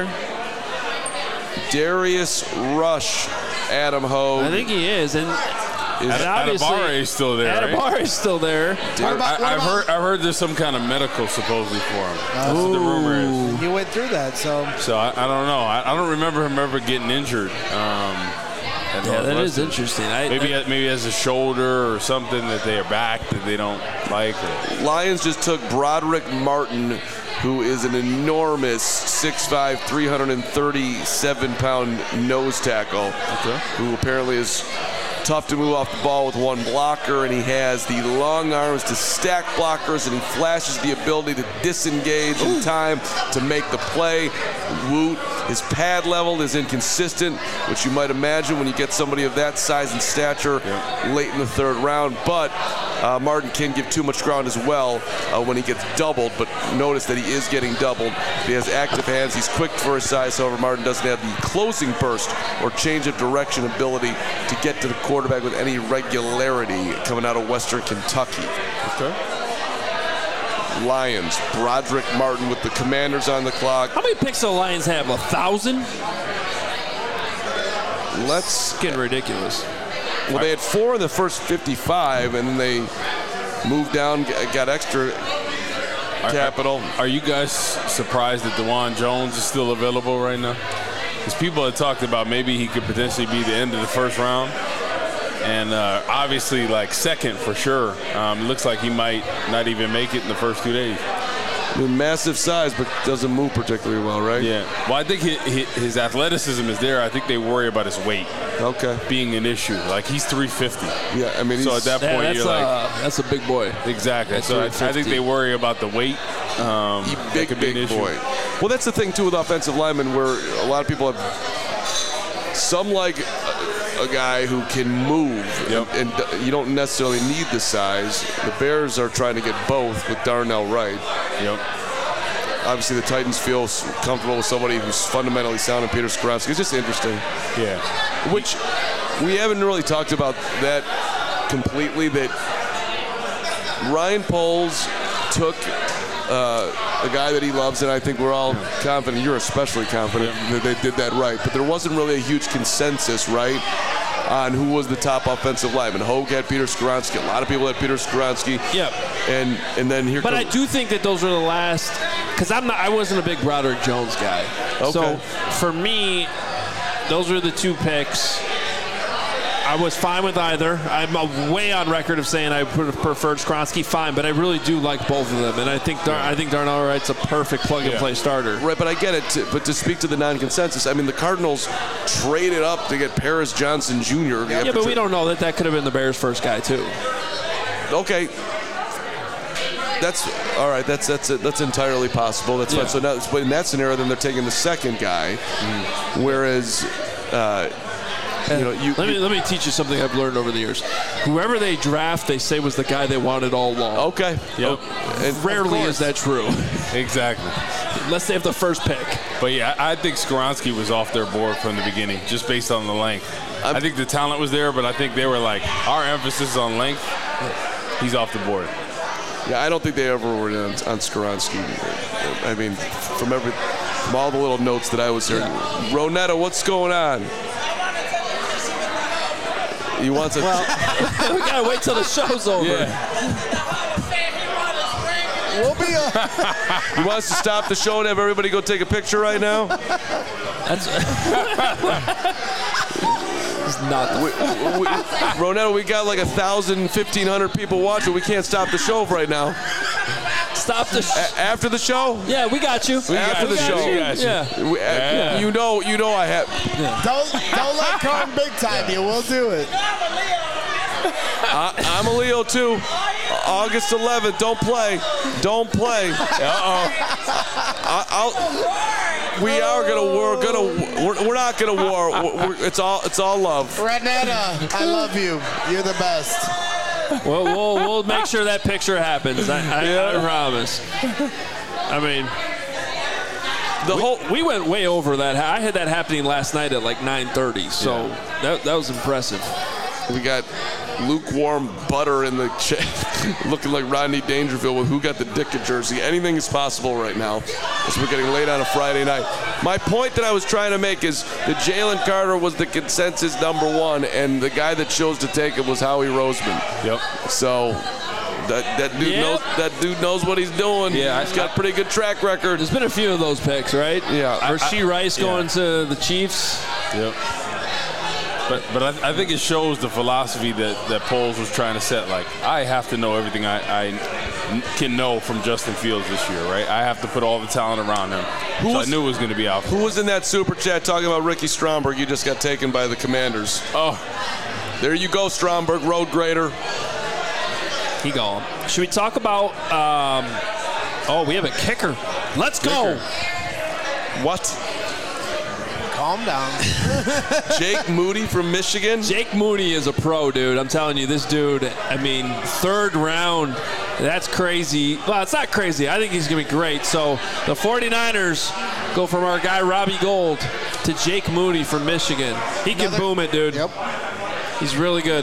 Darius Rush, Adam Hogue. I think he is, and, and Ad- obviously Adibare is still there, right? Adibare is still there. What about- what I, I've about- heard I've heard there's some kind of medical supposedly for him. That's what the rumor is. You went through that, so So I, I don't know. I, I don't remember him ever getting injured. Um, at Yeah, that is Northwestern. interesting. I, Maybe I, maybe has a shoulder or something that they are back that they don't like. Or, Lions just took Broderick Martin, who is an enormous six five, three hundred thirty-seven pound nose tackle, Okay. who apparently is tough to move off the ball with one blocker, and he has the long arms to stack blockers, and he flashes the ability to disengage in time to make the play. Woot, his pad level is inconsistent, which you might imagine when you get somebody of that size and stature Yep. late in the third round, but uh, Martin can give too much ground as well uh, when he gets doubled, but notice that he is getting doubled. He has active hands, he's quick for his size, however Martin doesn't have the closing burst or change of direction ability to get to the quarterback with any regularity coming out of Western Kentucky. okay. Lions, Broderick Martin with the Commanders on the clock. how many picks do the Lions have? A thousand? Let's, It's getting ridiculous. well, they had four in the first fifty-five, and then they moved down, g- got extra capital. Are you guys surprised that DeJuan Jones is still available right now? Because people have talked about maybe he could potentially be the end of the first round. And uh, obviously, like, second for sure. Um, it looks like he might not even make it in the first two days. I mean, massive size, but doesn't move particularly well, right? Yeah. Well, I think his, his athleticism is there. I think they worry about his weight Okay. being an issue. Like, he's three fifty. Yeah, I mean, So he's, at that Yeah, point, that's, you're like, uh, that's a big boy. exactly. That's So I, I three think fifty. they worry about the weight. Um, he that big, could be an big issue. boy. Well, that's the thing, too, with offensive linemen, where a lot of people have some like a, a guy who can move, Yep. and, and you don't necessarily need the size. The Bears are trying to get both with Darnell Wright. Yep. Obviously, the Titans feel s- comfortable with somebody who's fundamentally sound in Peter Skoronski. It's just interesting. Yeah. Which we haven't really talked about that completely, that Ryan Poles took uh, a guy that he loves, and I think we're all confident, you're especially confident that they did that right, but there wasn't really a huge consensus, right, on who was the top offensive lineman. Hogue had Peter Skoronski, a lot of people had Peter Skoronski. Yep. And and then here But I comes, do think that those were the last, because I'm not, I wasn't a big Broderick Jones guy. Okay. So for me, those were the two picks. I was fine with either. I'm uh, way on record of saying I would have preferred Skoronski, fine, but I really do like both of them, and I think Dar- I think Darnell Wright's a perfect plug-and-play Yeah. starter. Right, but I get it. To, but to speak to the non-consensus, I mean, the Cardinals traded up to get Paris Johnson Junior Yeah, but we don't know that that could have been the Bears' first guy too. Okay. That's all right. That's that's that's entirely possible. That's Yeah. fine. So now, but in that scenario, then they're taking the second guy, whereas, uh, you know, you. Let me let me teach you something I've learned over the years. Whoever they draft, they say was the guy they wanted all along. okay. Yep. And Rarely is that true, Exactly. unless they have the first pick. But yeah, I I think Skoronski was off their board from the beginning, just based on the length. I think the talent was there, but I think they were like, our emphasis is on length. He's off the board. Yeah, I don't think they ever were on, on Skoronski. I mean, from every, from all the little notes that I was hearing, Ronetta, what's going on? He wants a. We gotta wait till the show's over. Yeah. we'll be on. He wants to stop the show and have everybody go take a picture right now. That's it's not the We, we, Ronetta, we got like a thousand, fifteen hundred people watching. We can't stop the show right now. stop the. Sh- A- after the show. yeah, we got you. After got the you. show. We got you. Yeah. We- uh, Yeah. You know, you know, I have. Don't don't let Carm big time you. We'll do it. I, I'm a Leo too. August eleventh, don't play. Don't play. Uh-oh. I, I'll, we are gonna we're gonna we're, we're not gonna war. We're, we're, it's all it's all love. Renetta, I love you. You're the best. Well, we'll we'll make sure that picture happens. I, I, Yeah. I promise. I mean, The we, whole we went way over that. I had that happening last night at like nine thirty, so Yeah. that that was impressive. we got lukewarm butter in the ch- looking like Rodney Dangerfield with who got the Ditka jersey. Anything is possible right now as we're getting late on a Friday night. My point that I was trying to make is that Jalen Carter was the consensus number one, and the guy that chose to take it was Howie Roseman. Yep. So that that dude Yep. knows that dude knows what he's doing. Yeah, he's I- got a pretty good track record. There's been a few of those picks, right? Yeah. I- Rasheed Rice going yeah. to the Chiefs. Yep. But but I, I think it shows the philosophy that, that Poles was trying to set. Like, I have to know everything I, I can know from Justin Fields this year, right? I have to put all the talent around him. Who so was- I knew it was going to be out. Who was in that super chat talking about Ricky Stromberg? You just got taken by the Commanders. Oh, There you go, Stromberg, road grader. He gone. Should we talk about? Um, oh, we have a kicker. Let's go. What? Calm down. Jake Moody from Michigan? Jake Moody is a pro, dude. I'm telling you, this dude, I mean, third round, that's crazy. Well, it's not crazy. I think he's going to be great. So the 49ers go from our guy Robbie Gould to Jake Moody from Michigan. He can Another- boom it, dude. Yep. He's really good.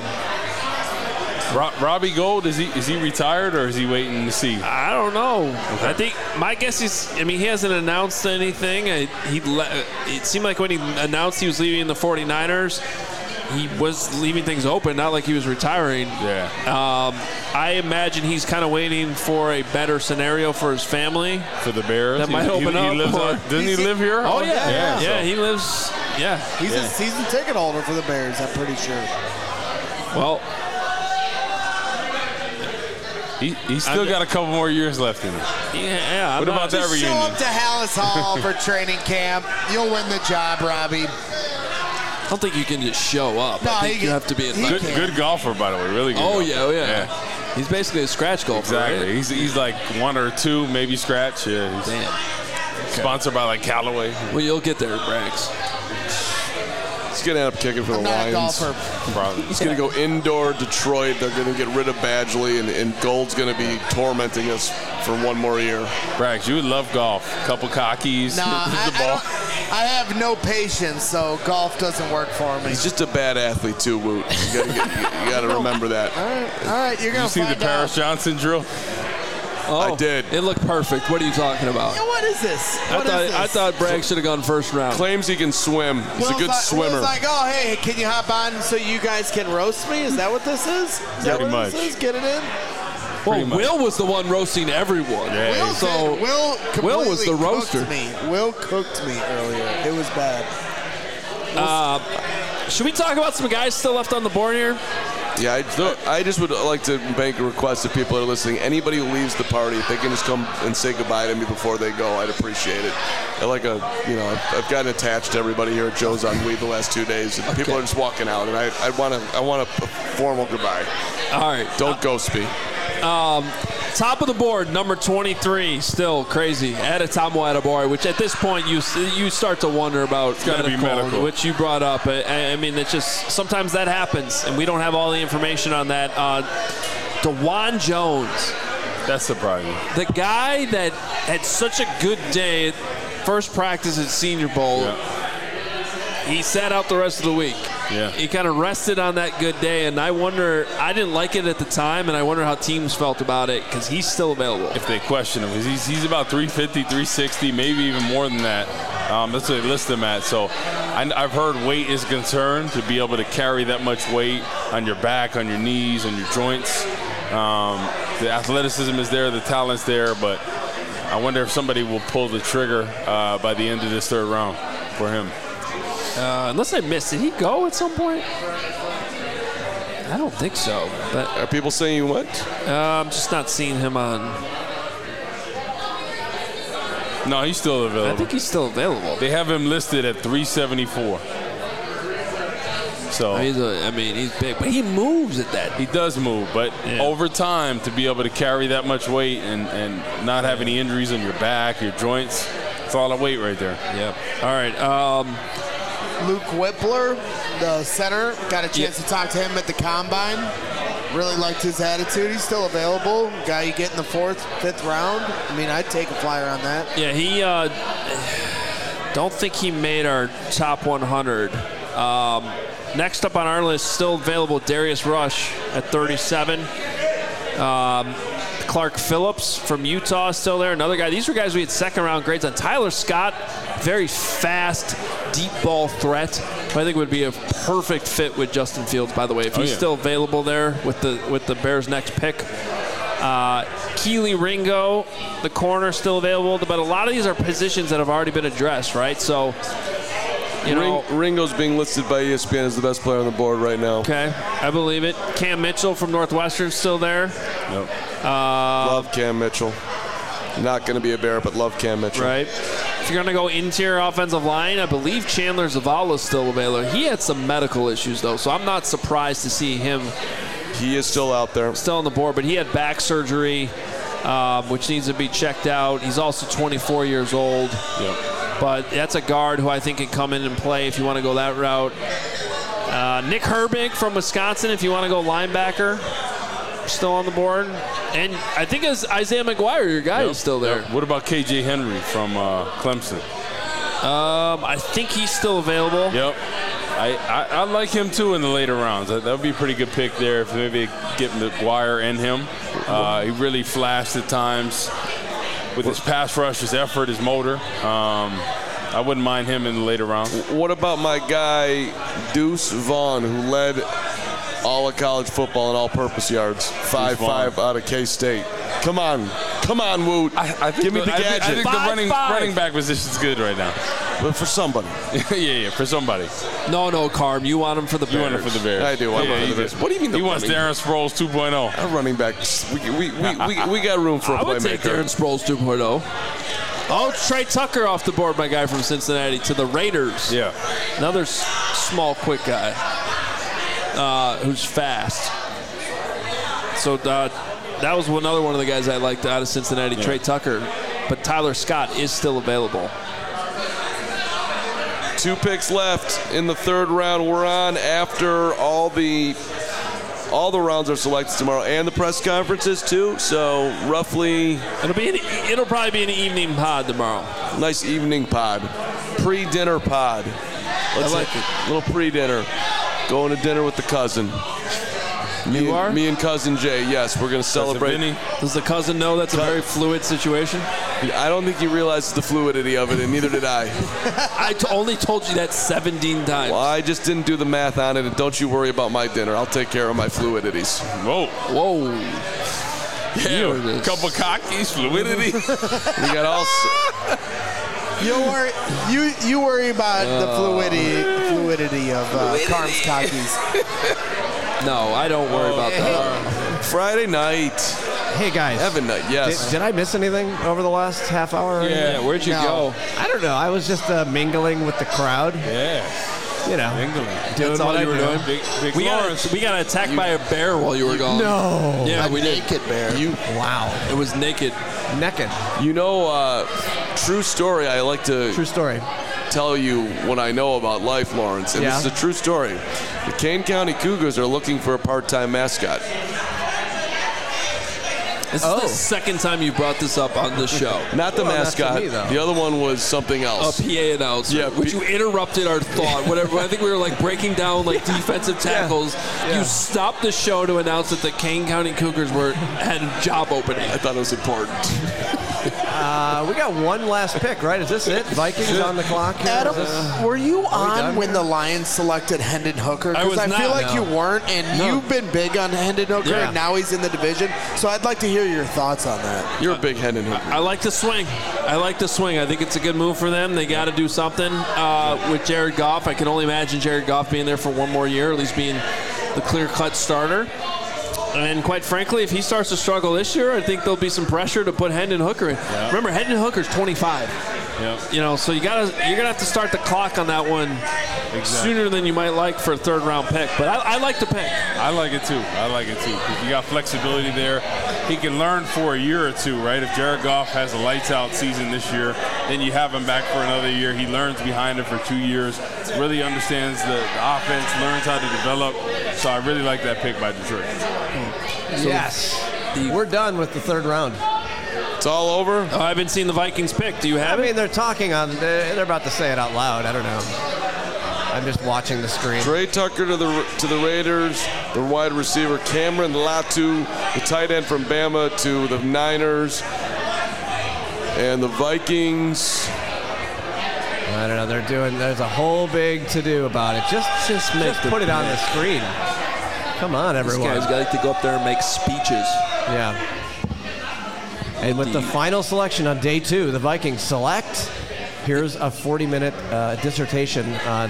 Ro- Robbie Gould, is he is he retired or is he waiting to see? I don't know. I think my guess is. I mean, he hasn't announced anything. I, he le- it seemed like when he announced he was leaving the 49ers, he was leaving things open, not like he was retiring. Yeah. Um, I imagine he's kind of waiting for a better scenario for his family. For the Bears. That He- might he, open he up Lives for- on, doesn't he He's- live here? Oh yeah, yeah, yeah. so- He lives. Yeah. He's Yeah. a season ticket holder for the Bears, I'm pretty sure. Well, He, he's still I'm- got a couple more years left in him. yeah. yeah I'm What not- about that Just show reunion? up to Hallis Hall for training camp. You'll win the job, Robbie. I don't think you can just show up. No, I think he you can- have to be he invited. Good, can. good golfer, by the way. Really good. Oh golfer. yeah, oh yeah. He's basically a scratch golfer. Exactly. Right? He's he's like one or two, maybe scratch. Yeah. He's Damn. sponsored by like Callaway. Well, you'll get there, Brax. He's going to end up kicking for the I'm not a Lions. golfer. Probably. He's going to go indoor Detroit. They're going to get rid of Badgley, and, and Gold's going to be tormenting us for one more year. Brax, you would love golf. Couple cockies. Nah, I, the I, ball. don't- I have no patience, so golf doesn't work for me. He's just a bad athlete, too, Woot. You got to remember that. All right, all right, you're Did gonna you see the find Paris out. Johnson drill? Oh, I did. It looked perfect. What are you talking about? Yeah, what is this? I What thought is this? I thought Bragg should have gone first round. Claims he can swim. He's Will's a good like, swimmer. Will's like, oh, hey, can you hop on so you guys can roast me? Is that what this is? Is that Pretty what much. this is? Get it in? Well, much. Will was the one roasting everyone. Yeah. Will, So did- Will, Will was the completely roaster. cooked Me. Will cooked me earlier. It was bad. should we talk about some guys still left on the board here? Yeah, I, I just would like to make a request to people that are listening. Anybody who leaves the party, if they can just come and say goodbye to me before they go, I'd appreciate it. I like a, you know, I've, I've gotten attached to everybody here at Joe's on Weed the last two days, and people are just walking out, and I, I want to, I want a formal goodbye. All right. Don't ghost me. Top of the board, number twenty-three, still crazy. Adetomo Adeboye, which at this point you you start to wonder about gotta be medical. which you brought up. I, I mean, it's just sometimes that happens, and we don't have all the information on that. Uh, DeJuan Jones, That's surprising. the guy that had such a good day at first practice at Senior Bowl, Yeah. he sat out the rest of the week. Yeah. He kind of rested on that good day, and I wonder, I didn't like it at the time, and I wonder how teams felt about it because he's still available. If they question him, 'cause he's, he's about three fifty, three sixty, maybe even more than that. Um, that's what they list him at. So I, I've heard weight is a concern to be able to carry that much weight on your back, on your knees, on your joints. Um, the athleticism is there, the talent's there, but I wonder if somebody will pull the trigger uh, by the end of this third round for him. Uh, unless I missed, did he go at some point? I don't think so. But Are people saying you went? uh, I'm just not seeing him on. No, he's still available. I think he's still available. They have him listed at three seventy-four. So he's a, I mean, he's big, but he moves at that. He does move, but yeah. over time, to be able to carry that much weight and, and not have any injuries on your back, your joints, it's all the weight right there. Yep. All right. Um, Luke Whippler, the center, got a chance yep. to talk to him at the Combine. Really liked his attitude. He's still available. Guy you get in the fourth, fifth round. I mean, I'd take a flyer on that. Yeah, he uh, don't think he made our top one hundred. Um, next up on our list, still available, Darius Rush at thirty-seven. Um, Clark Phillips from Utah is still there. Another guy. These were guys we had second-round grades on. Tyler Scott, very fast, deep ball threat. I think would be a perfect fit with Justin Fields, by the way, if he's oh, yeah. still available there with the with the Bears' next pick. Uh, Keely Ringo, the corner, still available, but a lot of these are positions that have already been addressed, right? So, you know, Ring, Ringo's being listed by E S P N as the best player on the board right now. Okay, I believe it. Cam Mitchell from Northwestern still there. Yep. Uh, love Cam Mitchell. Not going to be a Bear, but love Cam Mitchell. Right. If you're going to go interior offensive line, I believe Chandler Zavala is still available. He had some medical issues, though, so I'm not surprised to see him. He is still out there. Still on the board, but he had back surgery, um, which needs to be checked out. He's also twenty-four years old. Yep. But that's a guard who I think can come in and play if you want to go that route. Uh, Nick Herbig from Wisconsin, if you want to go linebacker, still on the board. And I think as Isaiah McGuire, your guy, yep. is still there. Yep. What about K J Henry from uh, Clemson? Um, I think he's still available. Yep. I, I, I like him, too, in the later rounds. That would be a pretty good pick there if maybe get McGuire and him. Uh, he really flashed at times with his pass rush, his effort, his motor. Um, I wouldn't mind him in the later rounds. What about my guy, Deuce Vaughn, who led all of college football in all-purpose yards, five five out of K-State. Come on. Come on, Woot. I, I think Give me the, the I gadget. think, I think five, the running, running back position is good right now. But for somebody. yeah, yeah, for somebody. No, no, Carm. You want him for the Bears. You want him for the Bears. I do want yeah, him for the Bears. What do you mean the He wants running? Darren Sproles two point oh. Our running back. We, we, we, we, we got room for a I would playmaker. take Darren Sproles two point oh. Oh, Trey Tucker off the board, my guy from Cincinnati, to the Raiders. Yeah. Another s- small, quick guy uh, who's fast. So uh, that was another one of the guys I liked out of Cincinnati, yeah. Trey Tucker. But Tyler Scott is still available. Two picks left in the third round. We're on after all the all the rounds are selected tomorrow, and the press conferences too. So roughly, it'll be an, it'll probably be an evening pod tomorrow. Nice evening pod, pre-dinner pod. Let's I like have it. A little pre-dinner. Going to dinner with the cousin. Me you and, are? Me and cousin Jay. Yes, we're going to celebrate. Does the cousin know that's a very fluid situation? I don't think he realizes the fluidity of it, and neither did I. I t- only told you that seventeen times. Well, I just didn't do the math on it, and don't you worry about my dinner. I'll take care of my fluidities. Whoa. Whoa. Yeah, a couple cockies, fluidity. We got all... You worry, you you worry about uh, the fluidity fluidity of uh, Carm's cockies. No, I don't worry oh, about hey. that. Friday night. Hey, guys. Heaven night, yes. Did, did I miss anything over the last half hour? Yeah, where'd you no. go? I don't know. I was just uh, mingling with the crowd. Yeah. You know. Mingling. Doing That's all what you I were do. doing? Big, big we, got, we got attacked you, by a bear while you were gone. No. Yeah, a we did. naked bear. You, wow. It was naked. Naked. You know, uh, true story, I like to True story. tell you what I know about life, Lawrence. And yeah. this is a true story. The Kane County Cougars are looking for a part-time mascot. This oh. is the second time you brought this up on the show. Not the well, mascot. Me, the other one was something else. A P A announcer. Yeah, which P- you interrupted our thought. Whatever. I think we were like breaking down like defensive tackles. Yeah. Yeah. You stopped the show to announce that the Kane County Cougars were had a job opening. I thought it was important. uh, we got one last pick, right? Is this it? Vikings on the clock here? Adam, this, were you we on when here? the Lions selected Hendon Hooker? I was Because I, feel not, like no. you weren't, and No. you've been big on Hendon Hooker, Yeah. and now he's in the division. So I'd like to hear your thoughts on that. You're a big Hendon Hooker. I like the swing. I like the swing. I think it's a good move for them. They got to do something uh, with Jared Goff. I can only imagine Jared Goff being there for one more year, at least being the clear-cut starter. And quite frankly, if he starts to struggle this year, I think there'll be some pressure to put Hendon Hooker in. Yeah. Remember, Hendon Hooker's twenty-five. Yep. You know, so you gotta you're gonna have to start the clock on that one exactly. sooner than you might like for a third round pick. But I, I like the pick. I like it too. I like it too. Because you got flexibility there. He can learn for a year or two, right? If Jared Goff has a lights out season this year, then you have him back for another year. He learns behind it for two years, really understands the, the offense, learns how to develop. So I really like that pick by Detroit. So yes. The, we're done with the third round. It's all over? Oh, I haven't seen the Vikings pick. Do you have I it? mean, they're talking on, they're about to say it out loud. I don't know. I'm just watching the screen. Trey Tucker to the to the Raiders, the wide receiver Cameron Latu, the tight end from Bama to the Niners, and the Vikings. I don't know. They're doing. There's a whole big to do about it. Just just, just put it on the screen. Come on, everyone. These guys got to go up there and make speeches. Yeah. And with the final selection on day two, the Vikings select. Here's a forty-minute uh, dissertation on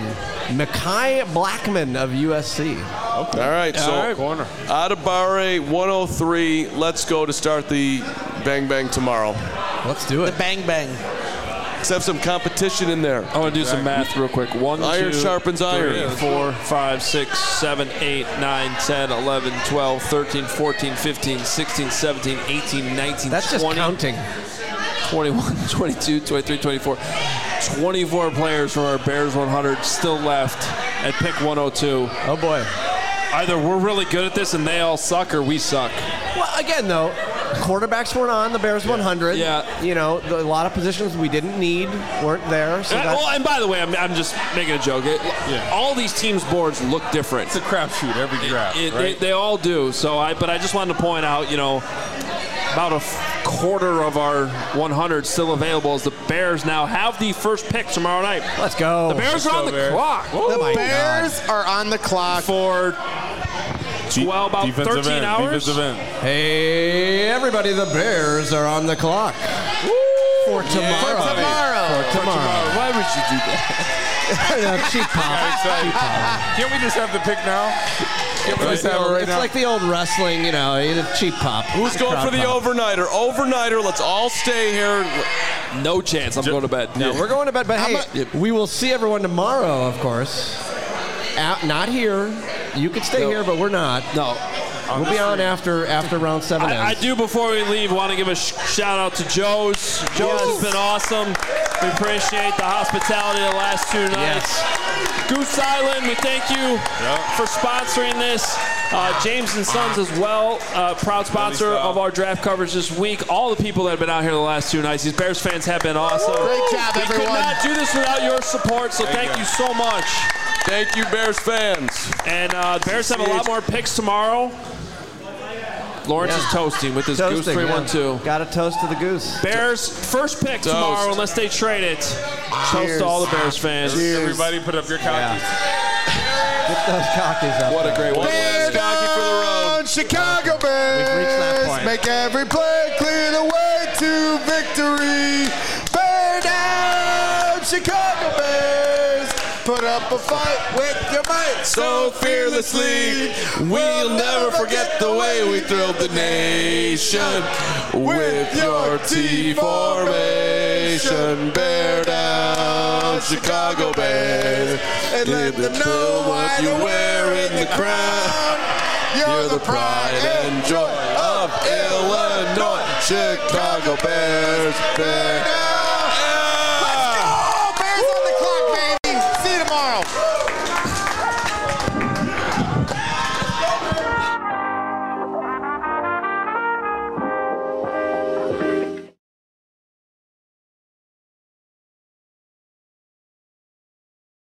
Mekhi Blackman of U S C. Okay. All right, so All right. Corner. Adibare one oh three. Let's go to start the Bang Bang tomorrow. Let's do it. The Bang Bang. Let's have some competition in there. I want to do some math real quick. One, Iron two, sharpens iron. three, four, five, six, seven, eight, nine, ten, eleven, twelve, thirteen, fourteen, fifteen, sixteen, seventeen, eighteen, nineteen, That's just twenty, counting. twenty-one, twenty-two, twenty-three, twenty-four. twenty-four players from our Bears one hundred still left at pick one oh two. Oh, boy. Either we're really good at this and they all suck, or we suck. Well, again, though, quarterbacks weren't on the Bears one hundred. Yeah. You know, the, a lot of positions we didn't need weren't there. So And, that's, well, and by the way, I'm, I'm just making a joke. It, Yeah. All these teams' boards look different. It's a crapshoot every draft, It- right? they, they all do. So I, but I just wanted to point out, you know, about a f- quarter of our one hundred still available as the Bears now have the first pick tomorrow night. let's go. The Bears are on the Bears. clock Oh, my Bears God. are on the clock. for twelve, about Defensive thirteen end, hours. Defensive end. Hey, everybody, the Bears are on the clock. For tomorrow. For tomorrow. For tomorrow. Why would you do that? No, cheap pop. Cheap pop. Can't we just have the pick now? Can't we It's, just have it right it's now? like the old wrestling, you know, you know, cheap pop. Who's going for the Crowd pop. overnighter? Overnighter. Let's all stay here. No chance. I'm going to bed. No, we're going to bed, but hey, we will see everyone tomorrow, of course. Out, not here. You could stay No. here, but we're not. No. We'll be on after after round seven I, I ends. do, before we leave, want to give a sh- shout out to Joe's. Joe's has been awesome. We appreciate the hospitality of the last two nights. Goose Island, we thank you for sponsoring this. Uh, James and Sons as well, uh, proud sponsor of our draft coverage this week. All the people that have been out here the last two nights, these Bears fans have been awesome. Great job, we everyone. could not do this without your support, so thank you so much. Thank you, Bears fans. And uh, the Bears have a lot more picks tomorrow. Lawrence Yeah. is toasting with his Goose Toasting, three yeah. one two. Got a toast to the goose. Bears first pick Toast. tomorrow unless they trade it. Toast to all the Bears fans. Everybody put up your cockies. Get those cockies up. What a great one. Bear Cocky for the road. down, Chicago Bears. We've reached that point. Make every play clear the way to victory. Bear down, Chicago Bears. Put up a fight with your might So fearlessly, we'll never forget the way we thrilled the nation with your T formation. Bear down, Chicago Bears, and let them know what you wear in the crown. You're the pride and joy of Illinois, Chicago Bears. Bear down.